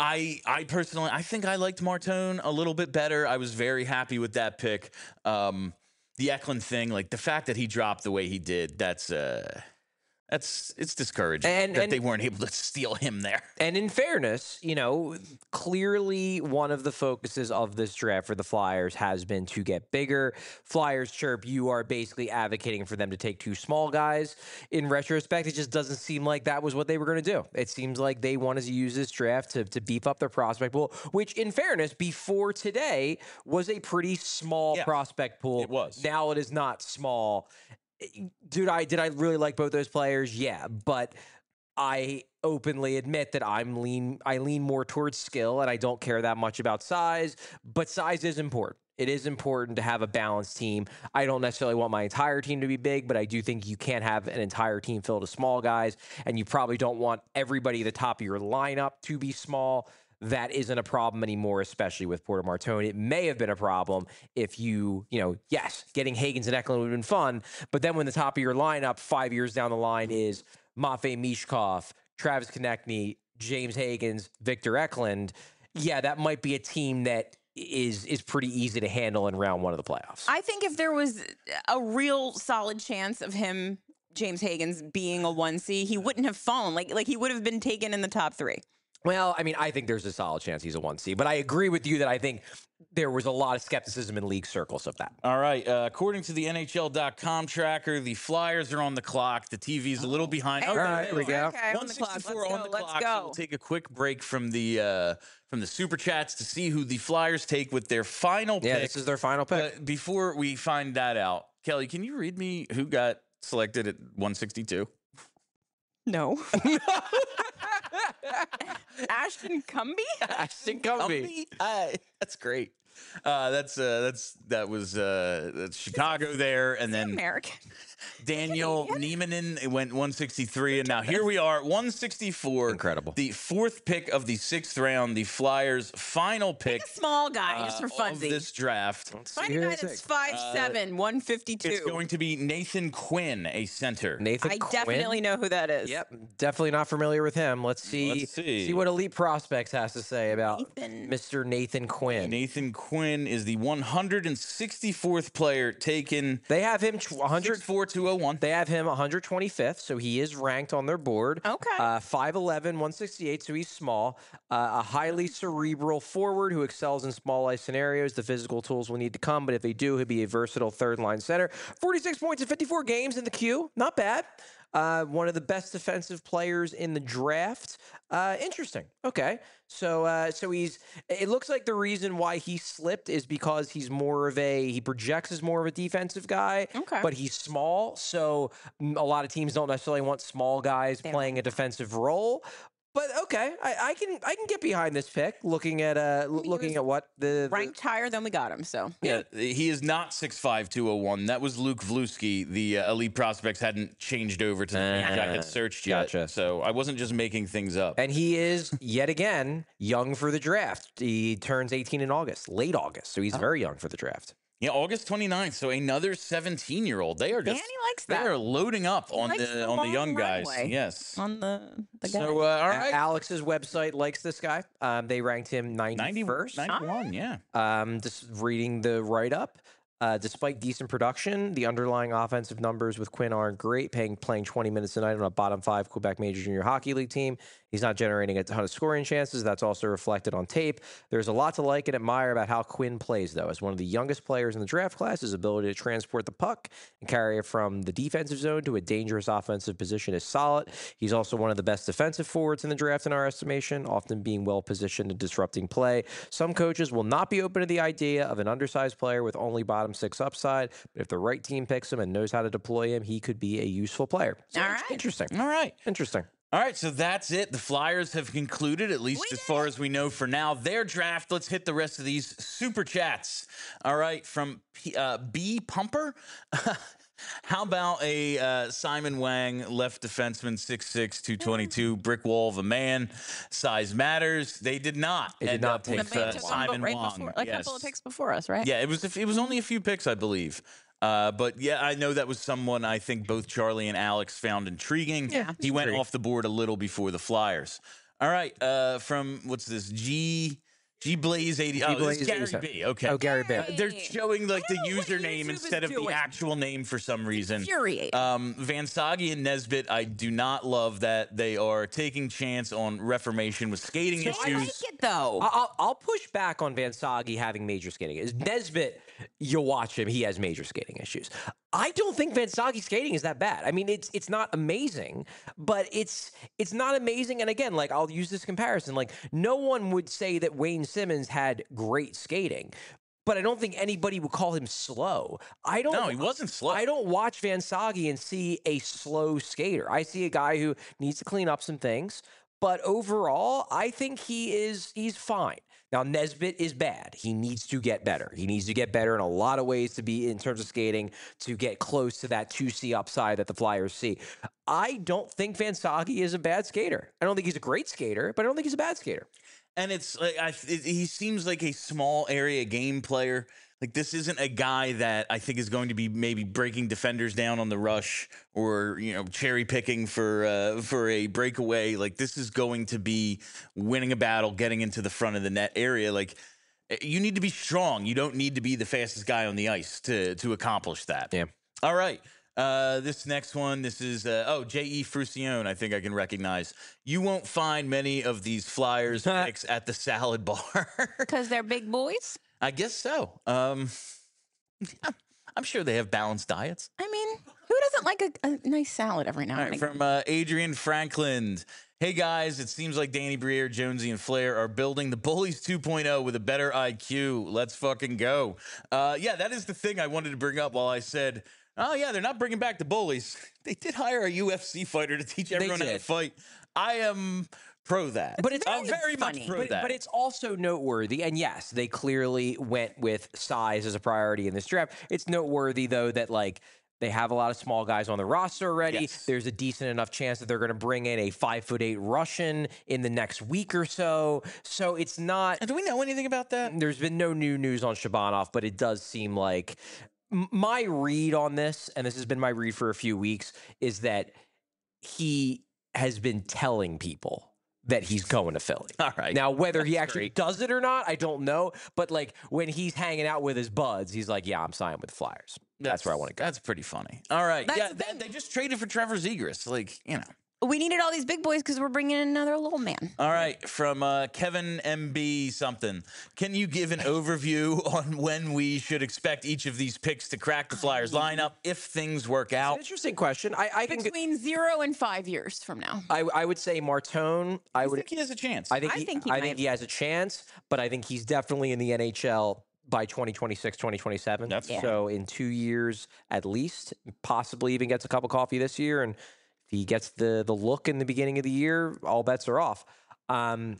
I I personally, I think I liked Martone a little bit better. I was very happy with that pick. Um, the Eklund thing, like the fact that he dropped the way he did, that's... Uh, That's it's discouraging and, that and, they weren't able to steal him there. And in fairness, you know, clearly one of the focuses of this draft for the Flyers has been to get bigger. Flyers Chirp, you are basically advocating for them to take two small guys. In retrospect, it just doesn't seem like that was what they were going to do. It seems like they wanted to use this draft to, to beef up their prospect pool, which in fairness, before today was a pretty small yeah, prospect pool. It was. Now it is not small. Dude, I did I really like both those players? Yeah, but I openly admit that I'm lean. I lean more towards skill, and I don't care that much about size. But size is important. It is important to have a balanced team. I don't necessarily want my entire team to be big, but I do think you can't have an entire team filled with small guys, and you probably don't want everybody at the top of your lineup to be small. That isn't a problem anymore, especially with Porter Martone. It may have been a problem if you, you know, yes, getting Hagens and Eklund would have been fun, but then when the top of your lineup five years down the line is Matvei Mishkov, Travis Konechny, James Hagens, Victor Eklund, yeah, that might be a team that is is pretty easy to handle in round one of the playoffs. I think if there was a real solid chance of him, James Hagens, being a one C, he wouldn't have fallen. Like, like he would have been taken in the top three. Well, I mean, I think there's a solid chance he's a one C, but I agree with you that I think there was a lot of skepticism in league circles of that. All right. Uh, according to the N H L dot com tracker, the Flyers are on the clock. The T V's a little behind. Hey, okay, all right, here we go. Okay, one sixty-four on on the the clock. clock. So we'll take a quick break from the uh, from the super chats to see who the Flyers take with their final yeah, pick. this is their final pick. But before we find that out, Kelly, can you read me who got selected at one sixty-two? No. Ashton Cumby? Ashton Cumby. Uh, that's great. Uh, that's uh, that's that was uh, that's Chicago there, and then American. Daniel Niemanen went one sixty-three, and now here we are, one sixty-four. Incredible. The fourth pick of the sixth round, the Flyers' final pick. A small guy, just for uh, of funsies. this draft. Find a guy that's five seven, one fifty-two. It's going to be Nathan Quinn, a center. Nathan I Quinn? definitely know who that is. Yep, definitely not familiar with him. Let's see. Let's see. what Elite Prospects has to say about Nathan. Mister Nathan Quinn. Nathan Quinn is the one hundred sixty-fourth player taken. They have him tw- one hundred. six four, two oh one. They have him one hundred twenty-fifth, so he is ranked on their board. Okay. Uh, five eleven, one sixty-eight, so he's small. Uh, a highly cerebral forward who excels in small ice scenarios. The physical tools will need to come, but if they do, he'll be a versatile third-line center. forty-six points in fifty-four games in the queue. Not bad. Uh, one of the best defensive players in the draft. Uh, interesting. Okay. So, uh, so he's, it looks like the reason why he slipped is because he's more of a, he projects as more of a defensive guy, Okay. but he's small. So mm, a lot of teams don't necessarily want small guys They playing a defensive role. But okay, I, I can I can get behind this pick. Looking at uh, l- he looking was at what the, the Ranked higher than we got him, so. Yeah, he is not six five, two oh one. That was Luke Vluski. The uh, Elite Prospects hadn't changed over to the page I Ah, had searched yet. gotcha. So I wasn't just making things up. And he is, yet again, young for the draft. He turns eighteen in August, late August. So he's very young for the draft. Yeah, August twenty-ninth. So another seventeen-year-old. They are just Danny likes they that. are loading up on likes the, the on the long young guys. runway. Yes. On the, the guy. So uh, all A- right. Alex's website likes this guy. Um, they ranked him ninety, ninety-first. ninety-one, yeah. Um, just reading the write-up. Uh, despite decent production, the underlying offensive numbers with Quinn aren't great. Paying, playing twenty minutes a night on a bottom five Quebec Major Junior Hockey League team. He's not generating a ton of scoring chances. That's also reflected on tape. There's a lot to like and admire about how Quinn plays, though. As one of the youngest players in the draft class, his ability to transport the puck and carry it from the defensive zone to a dangerous offensive position is solid. He's also one of the best defensive forwards in the draft in our estimation, often being well positioned and disrupting play. Some coaches will not be open to the idea of an undersized player with only bottom six upside, but if the right team picks him and knows how to deploy him, he could be a useful player. So All it's right. Interesting. All right. Interesting. All right, so that's it. The Flyers have concluded, at least We as did far it. as we know for now, their draft. Let's hit the rest of these super chats. All right, from P, uh, B Pumper. How about a uh, Simon Wang, left defenseman, six six, two twenty-two, brick wall of a man, size matters. They did not They did end not up take with The man uh, took one, Simon but right Wang. before, like a Yes. couple of picks before us, right? Yeah, it was. It was only a few picks, I believe. Uh, but yeah, I know that was someone I think both Charlie and Alex found intriguing. Yeah, he went intriguing. off the board a little before the Flyers. All right, uh, from what's this? G G Blaze eighty. Oh, this is G-Blaze Gary eighty-seven. B. Okay. Oh, Gary B. Uh, they're Hey. showing like the I don't know what username YouTube is instead of the doing. actual name for some reason. Infuriating. Um, Van Sagi and Nesbitt, I do not love that they are taking chance on reformation with skating I like issues. it, though. I- I'll, I'll push back on Van Sagi having major skating issues. Nesbitt, you'll watch him; he has major skating issues. I don't think Van Sagi's skating is that bad. I mean, it's it's not amazing, but it's it's not amazing. And again, like I'll use this comparison: like no one would say that Wayne Simmons had great skating. But I don't think anybody would call him slow. I don't. No, he wasn't slow. I don't watch Van Sagi and see a slow skater. I see a guy who needs to clean up some things. But overall, I think he is he's fine. Now Nesbitt is bad. He needs to get better. He needs to get better in a lot of ways to be in terms of skating to get close to that two C upside that the Flyers see. I don't think Van Sagi is a bad skater. I don't think he's a great skater, but I don't think he's a bad skater. And it's like I, it, he seems like a small area game player. Like this isn't a guy that I think is going to be maybe breaking defenders down on the rush or you know cherry picking for uh, for a breakaway. Like this is going to be winning a battle, getting into the front of the net area. Like you need to be strong. You don't need to be the fastest guy on the ice to to accomplish that. Yeah. All right. Uh, this next one, this is, uh, oh, J E. Frucione, I think I can recognize. You won't find many of these Flyers picks at the salad bar. Because they're big boys. I guess so. Um, yeah, I'm sure they have balanced diets. I mean, who doesn't like a, a nice salad every now All and right, again? from uh, Adrian Franklin. Hey guys, it seems like Danny Briere, Jonesy, and Flair are building the Bullies two point oh with a better I Q. Let's fucking go. Uh, yeah, that is the thing I wanted to bring up while I said, oh yeah, they're not bringing back the Bullies. They did hire a U F C fighter to teach everyone how to did. fight. I am pro that. But it's I'm very very funny. much pro But, that. but it's also noteworthy, and yes, they clearly went with size as a priority in this draft. It's noteworthy, though, that like they have a lot of small guys on the roster already. Yes. There's a decent enough chance that they're going to bring in a five foot eight Russian in the next week or so. So it's not. And do we know anything about that? There's been no new news on Shabanov, but it does seem like m- my read on this, and this has been my read for a few weeks, is that he has been telling people that he's going to Philly. All right. Now, whether he That's actually great. does it or not, I don't know. But like when he's hanging out with his buds, he's like, "Yeah, I'm signing with the Flyers. That's, where I want to go." That's pretty funny. All right. That's yeah, the they, thing. they just traded for Trevor Zegras. Like, you know. We needed all these big boys because we're bringing in another little man. All right, from uh, Kevin M B something. Can you give an overview on when we should expect each of these picks to crack the Flyers lineup if things work It's an out? interesting question. I, I can. Between zero and five years from now. I, I would say Martone. I I would. think he has a chance. I think. I he, think he I might. think he has a chance, but I think he's definitely in the N H L by twenty twenty-six, twenty twenty-seven. That's Yeah. So in two years at least, possibly even gets a cup of coffee this year. And if he gets the the look in the beginning of the year, all bets are off. Um,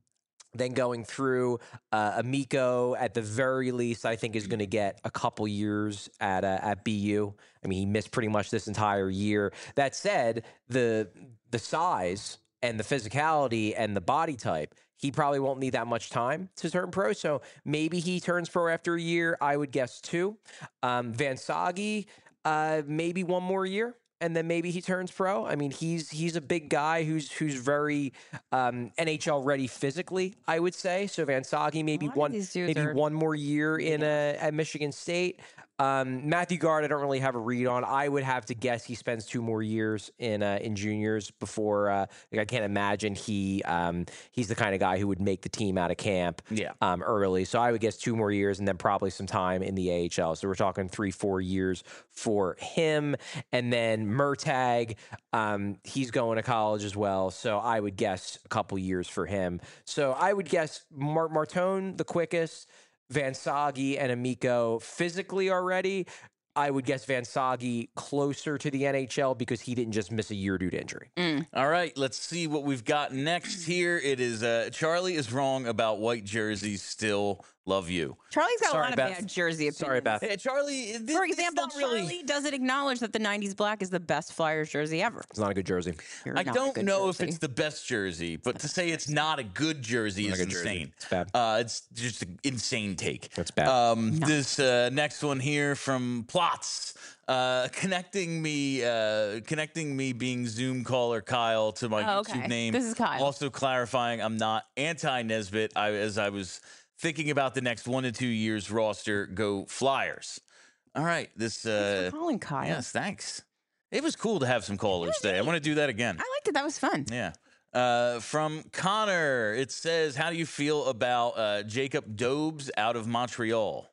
then going through uh, Amico, at the very least, I think is going to get a couple years at uh, at B U. I mean, he missed pretty much this entire year. That said, the the size and the physicality and the body type, he probably won't need that much time to turn pro. So maybe he turns pro after a year. I would guess two. Um, Van Sagi, uh, maybe one more year. And then maybe he turns pro. I mean, he's he's a big guy who's who's very um, N H L ready physically, I would say. So Van Sagi maybe lot of one these dudes maybe are one more year in a, at Michigan State. Um, Matthew Guard, I don't really have a read on. I would have to guess he spends two more years in uh, in juniors before. Uh, like I can't imagine he um, he's the kind of guy who would make the team out of camp Yeah. um, early. So I would guess two more years and then probably some time in the A H L. So we're talking three, four years for him. And then Murtag, um, he's going to college as well. So I would guess a couple years for him. So I would guess Mar- Martone the quickest, Van Sagi and Amico physically already. I would guess Van Sagi closer to the N H L because he didn't just miss a year due to injury. All right, let's see what we've got next here. It is uh, Charlie is wrong about white jerseys. Still love you. Charlie's got Sorry, a lot of Beth. bad jersey opinions. Sorry, Beth. Hey, Charlie. This, For this example, not really. Charlie doesn't acknowledge that the nineties black is the best Flyers jersey ever. It's not a good jersey. You're I not a don't good know if jersey. it's the best jersey, but to say it's not a good jersey Not is a good jersey. insane. It's bad. Uh, it's just an insane take. It's bad. Um, this uh, next one here from Plots, uh, connecting me, uh, connecting me being Zoom caller Kyle to my Oh, YouTube okay. name. This is Kyle. Also clarifying, I'm not anti Nesbitt. I, as I was thinking about the next one to two years roster, go Flyers. All right, this. Thanks Uh, for calling, Kyle. yes, thanks. It was cool to have some callers today. I want to do that again. I liked it. That was fun. Yeah. Uh, from Connor, it says, how do you feel about uh, Jacob Dobes out of Montreal?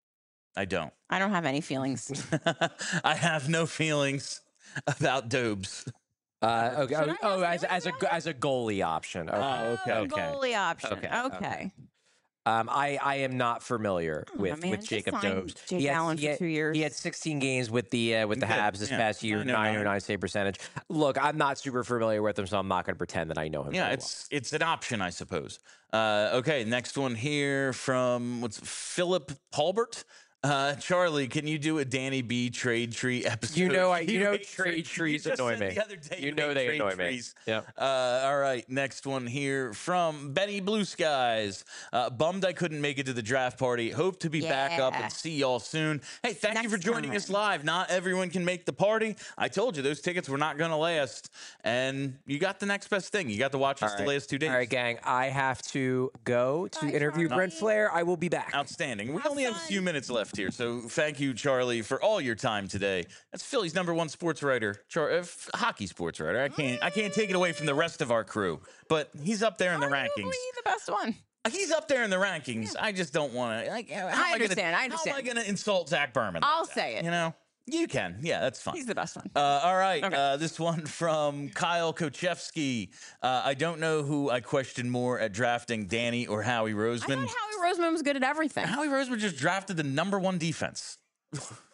I don't. I don't have any feelings. I have no feelings about Dobes. Uh, okay. Should Oh, I oh, ask as you as a as a goalie option. Okay. Oh, okay. Oh, Okay. goalie option. Okay, Okay. okay. Um, I, I am not familiar Oh, with, man, with just Jacob sign Dobes. Jake He had- Allen he for had- two years. He had sixteen games with the uh, with the Good. Habs this Yeah. past year, nine oh nine. nine oh nine save percentage. Look, I'm not super familiar with him, so I'm not going to pretend that I know him. Yeah, very it's it's an option, I suppose. Uh, okay, next one here from what's Philip Paulbert. Uh, Charlie, can you do a Danny B trade tree episode? You know I- you know hate trade You trees just annoy said me. The other day You you know hate they trade annoy me. trees. Yep. Uh, all right, next one here from Benny Blue Skies. Uh, bummed I couldn't make it to the draft party. Hope to be back up Yeah. and see y'all soon. Hey, thank you Next for joining time. us live. Not everyone can make the party. I told you those tickets were not going to last, and you got the next best thing. You got to watch us All the right. last two days. All right, gang. I have to go to Bye, interview Brent Charlie. Flair. I will be back. Outstanding. We Have only have a fun. few minutes left here, so thank you, Charlie, for all your time today. That's Philly's number one sports writer, Char- uh, f- hockey sports writer. I can't, I can't take it away from the rest of our crew, but he's up there in the rankings. Arguably the best one. He's up there in the rankings. I just don't want to. Like, how am I understand, Gonna, I understand. How am I going to insult Zach Berman? I'll say it. You know, you can. Yeah, that's fine. He's the best one. Uh, all right. Okay. Uh, this one from Kyle Kochevsky. Uh, I don't know who I question more at drafting, Danny or Howie I Roseman. thought Howie Roseman was good at everything. Howie Roseman just drafted the number one defense.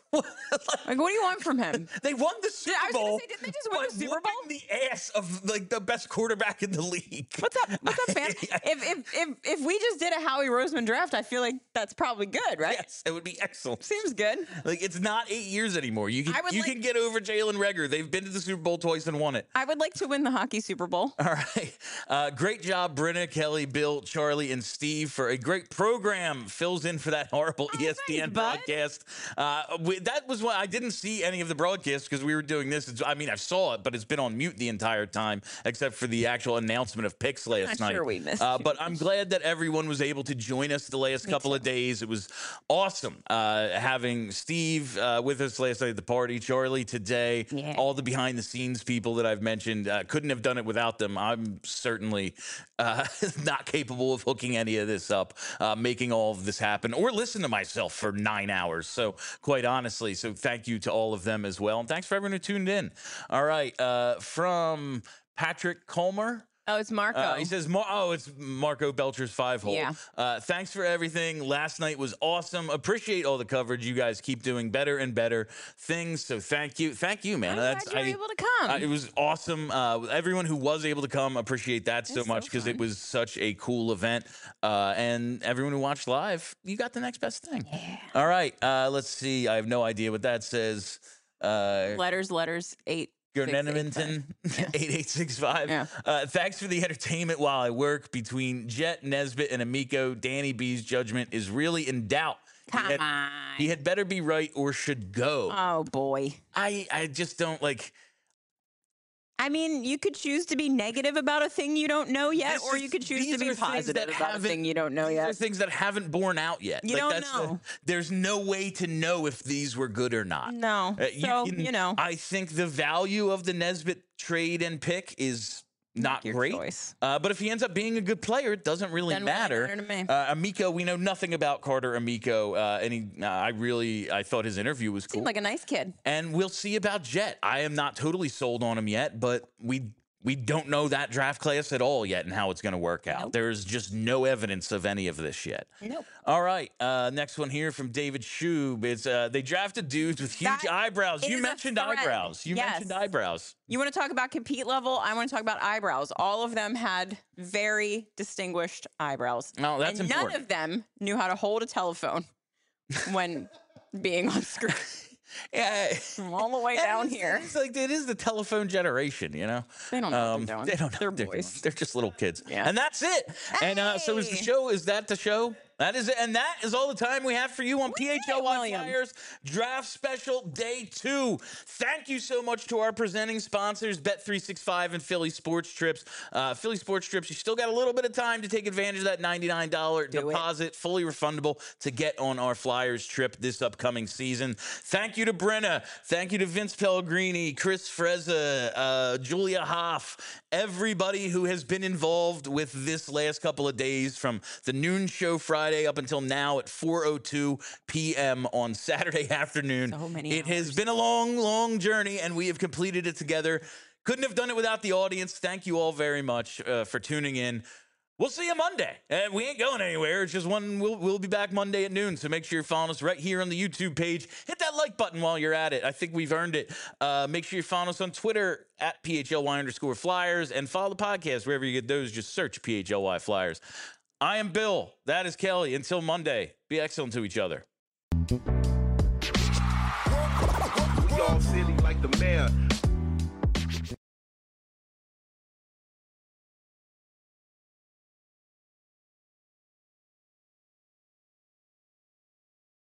Like, what do you want from him? They won the Super I was Bowl. gonna say, didn't they just win the Super Bowl? The ass of like the best quarterback in the league. What's up? What's up, fam? if if if if we just did a Howie Roseman draft, I feel like that's probably good, right? Yes, it would be excellent. Seems good. Like it's not eight years anymore. You can you like, can get over Jalen Reagor. They've been to the Super Bowl twice and won it. I would like to win the hockey Super Bowl. All right. Uh, great job, Brenna, Kelly, Bill, Charlie, and Steve for a great program. Fills in for that horrible oh, E S P N thanks, broadcast. Uh, we, that was why I didn't see any of the broadcast because we were doing this. It's, I mean, I saw it, but it's been on mute the entire time, except for the actual announcement of picks last I'm night. Sure we missed uh, but I'm glad that everyone was able to join us the last Me couple too. of days. It was awesome uh, having Steve uh, with us last night at the party, Charlie today, yeah. all the behind the scenes people that I've mentioned. Uh, couldn't have done it without them. I'm certainly uh, not capable of hooking any of this up, uh, making all of this happen, or listen to myself for nine hours. So quite honestly, so thank you to all of them as well. And thanks for everyone who tuned in. All right. Uh, from Patrick Colmer. Oh, it's Marco. Uh, he says, oh, it's Marco Belcher's five hole. Yeah. Uh, thanks for everything. Last night was awesome. Appreciate all the coverage. You guys keep doing better and better things. So thank you. Thank you, man. I'm That's, glad you were I, able to come. Uh, it was awesome. Uh, everyone who was able to come, appreciate that so It's much so because it fun. was such a cool event. Uh, and everyone who watched live, you got the next best thing. Yeah. All right. Uh, let's see. I have no idea what that says. Uh, letters, letters, eight. Gurneminton, eight eight six five. Yeah. Uh, thanks for the entertainment while I work. Between Jet, Nesbitt, and Amico, Danny B's judgment is really in doubt. Come he had, on. He had better be right or should go. Oh, boy. I, I just don't like... I mean, you could choose to be negative about a thing you don't know yet, This or is- you could choose these to be are things positive that about a haven't- thing you don't know These are yet. things that haven't borne out yet. You don't that's know. The, there's no way to know if these were good or not. No. Uh, so, you know. I think the value of the Nesbitt trade and pick is not Your great. choice. Uh, but if he ends up being a good player, it doesn't really Doesn't really matter. matter to me. Uh, Amico, we know nothing about Carter Amico. Uh, and he, uh, I really, I thought his interview was cool. Seemed like a nice kid. And we'll see about Jet. I am not totally sold on him yet, but we we don't know that draft class at all yet and how it's going to work out. Nope. There's just no evidence of any of this yet. Nope. All right. Uh, next one here from David Shube. It's uh, they drafted dudes with huge That eyebrows. You is a mentioned thread. eyebrows. You Yes. mentioned eyebrows. You want to talk about compete level? I want to talk about eyebrows. All of them had very distinguished eyebrows. No, that's and important. none of them knew how to hold a telephone when being on screen. Yeah. From all the way down It's- here. It's like it is the telephone generation, you know. They don't know Um, what they're doing. They don't know. They're what boys. doing. They're just little kids. Yeah. And that's it. And uh, so is the Hey. show. Is that the show? That is it. And that is all the time we have for you on P H L Y William. Flyers Draft Special Day two. Thank you so much to our presenting sponsors, Bet three sixty-five and Philly Sports Trips. Uh, Philly Sports Trips, you still got a little bit of time to take advantage of that ninety-nine dollars Do it. deposit, fully refundable, to get on our Flyers trip this upcoming season. Thank you to Brenna. Thank you to Vince Pellegrini, Chris Frezza, uh, Julia Hoff, everybody who has been involved with this last couple of days from the noon show Friday up until now at four oh two p.m. on Saturday afternoon. So many It has hours. been a long, long journey, and we have completed it together. Couldn't have done it without the audience. Thank you all very much uh, for tuning in. We'll see you Monday. And we ain't going anywhere. It's just one. We'll, we'll be back Monday at noon. So make sure you're following us right here on the YouTube page. Hit that like button while you're at it. I think we've earned it. Uh, make sure you're following us on Twitter at P H L Y underscore Flyers, and follow the podcast wherever you get those. Just search P H L Y Flyers. I am Bill. That is Kelly. Until Monday, be excellent to each other. We all silly like the mayor.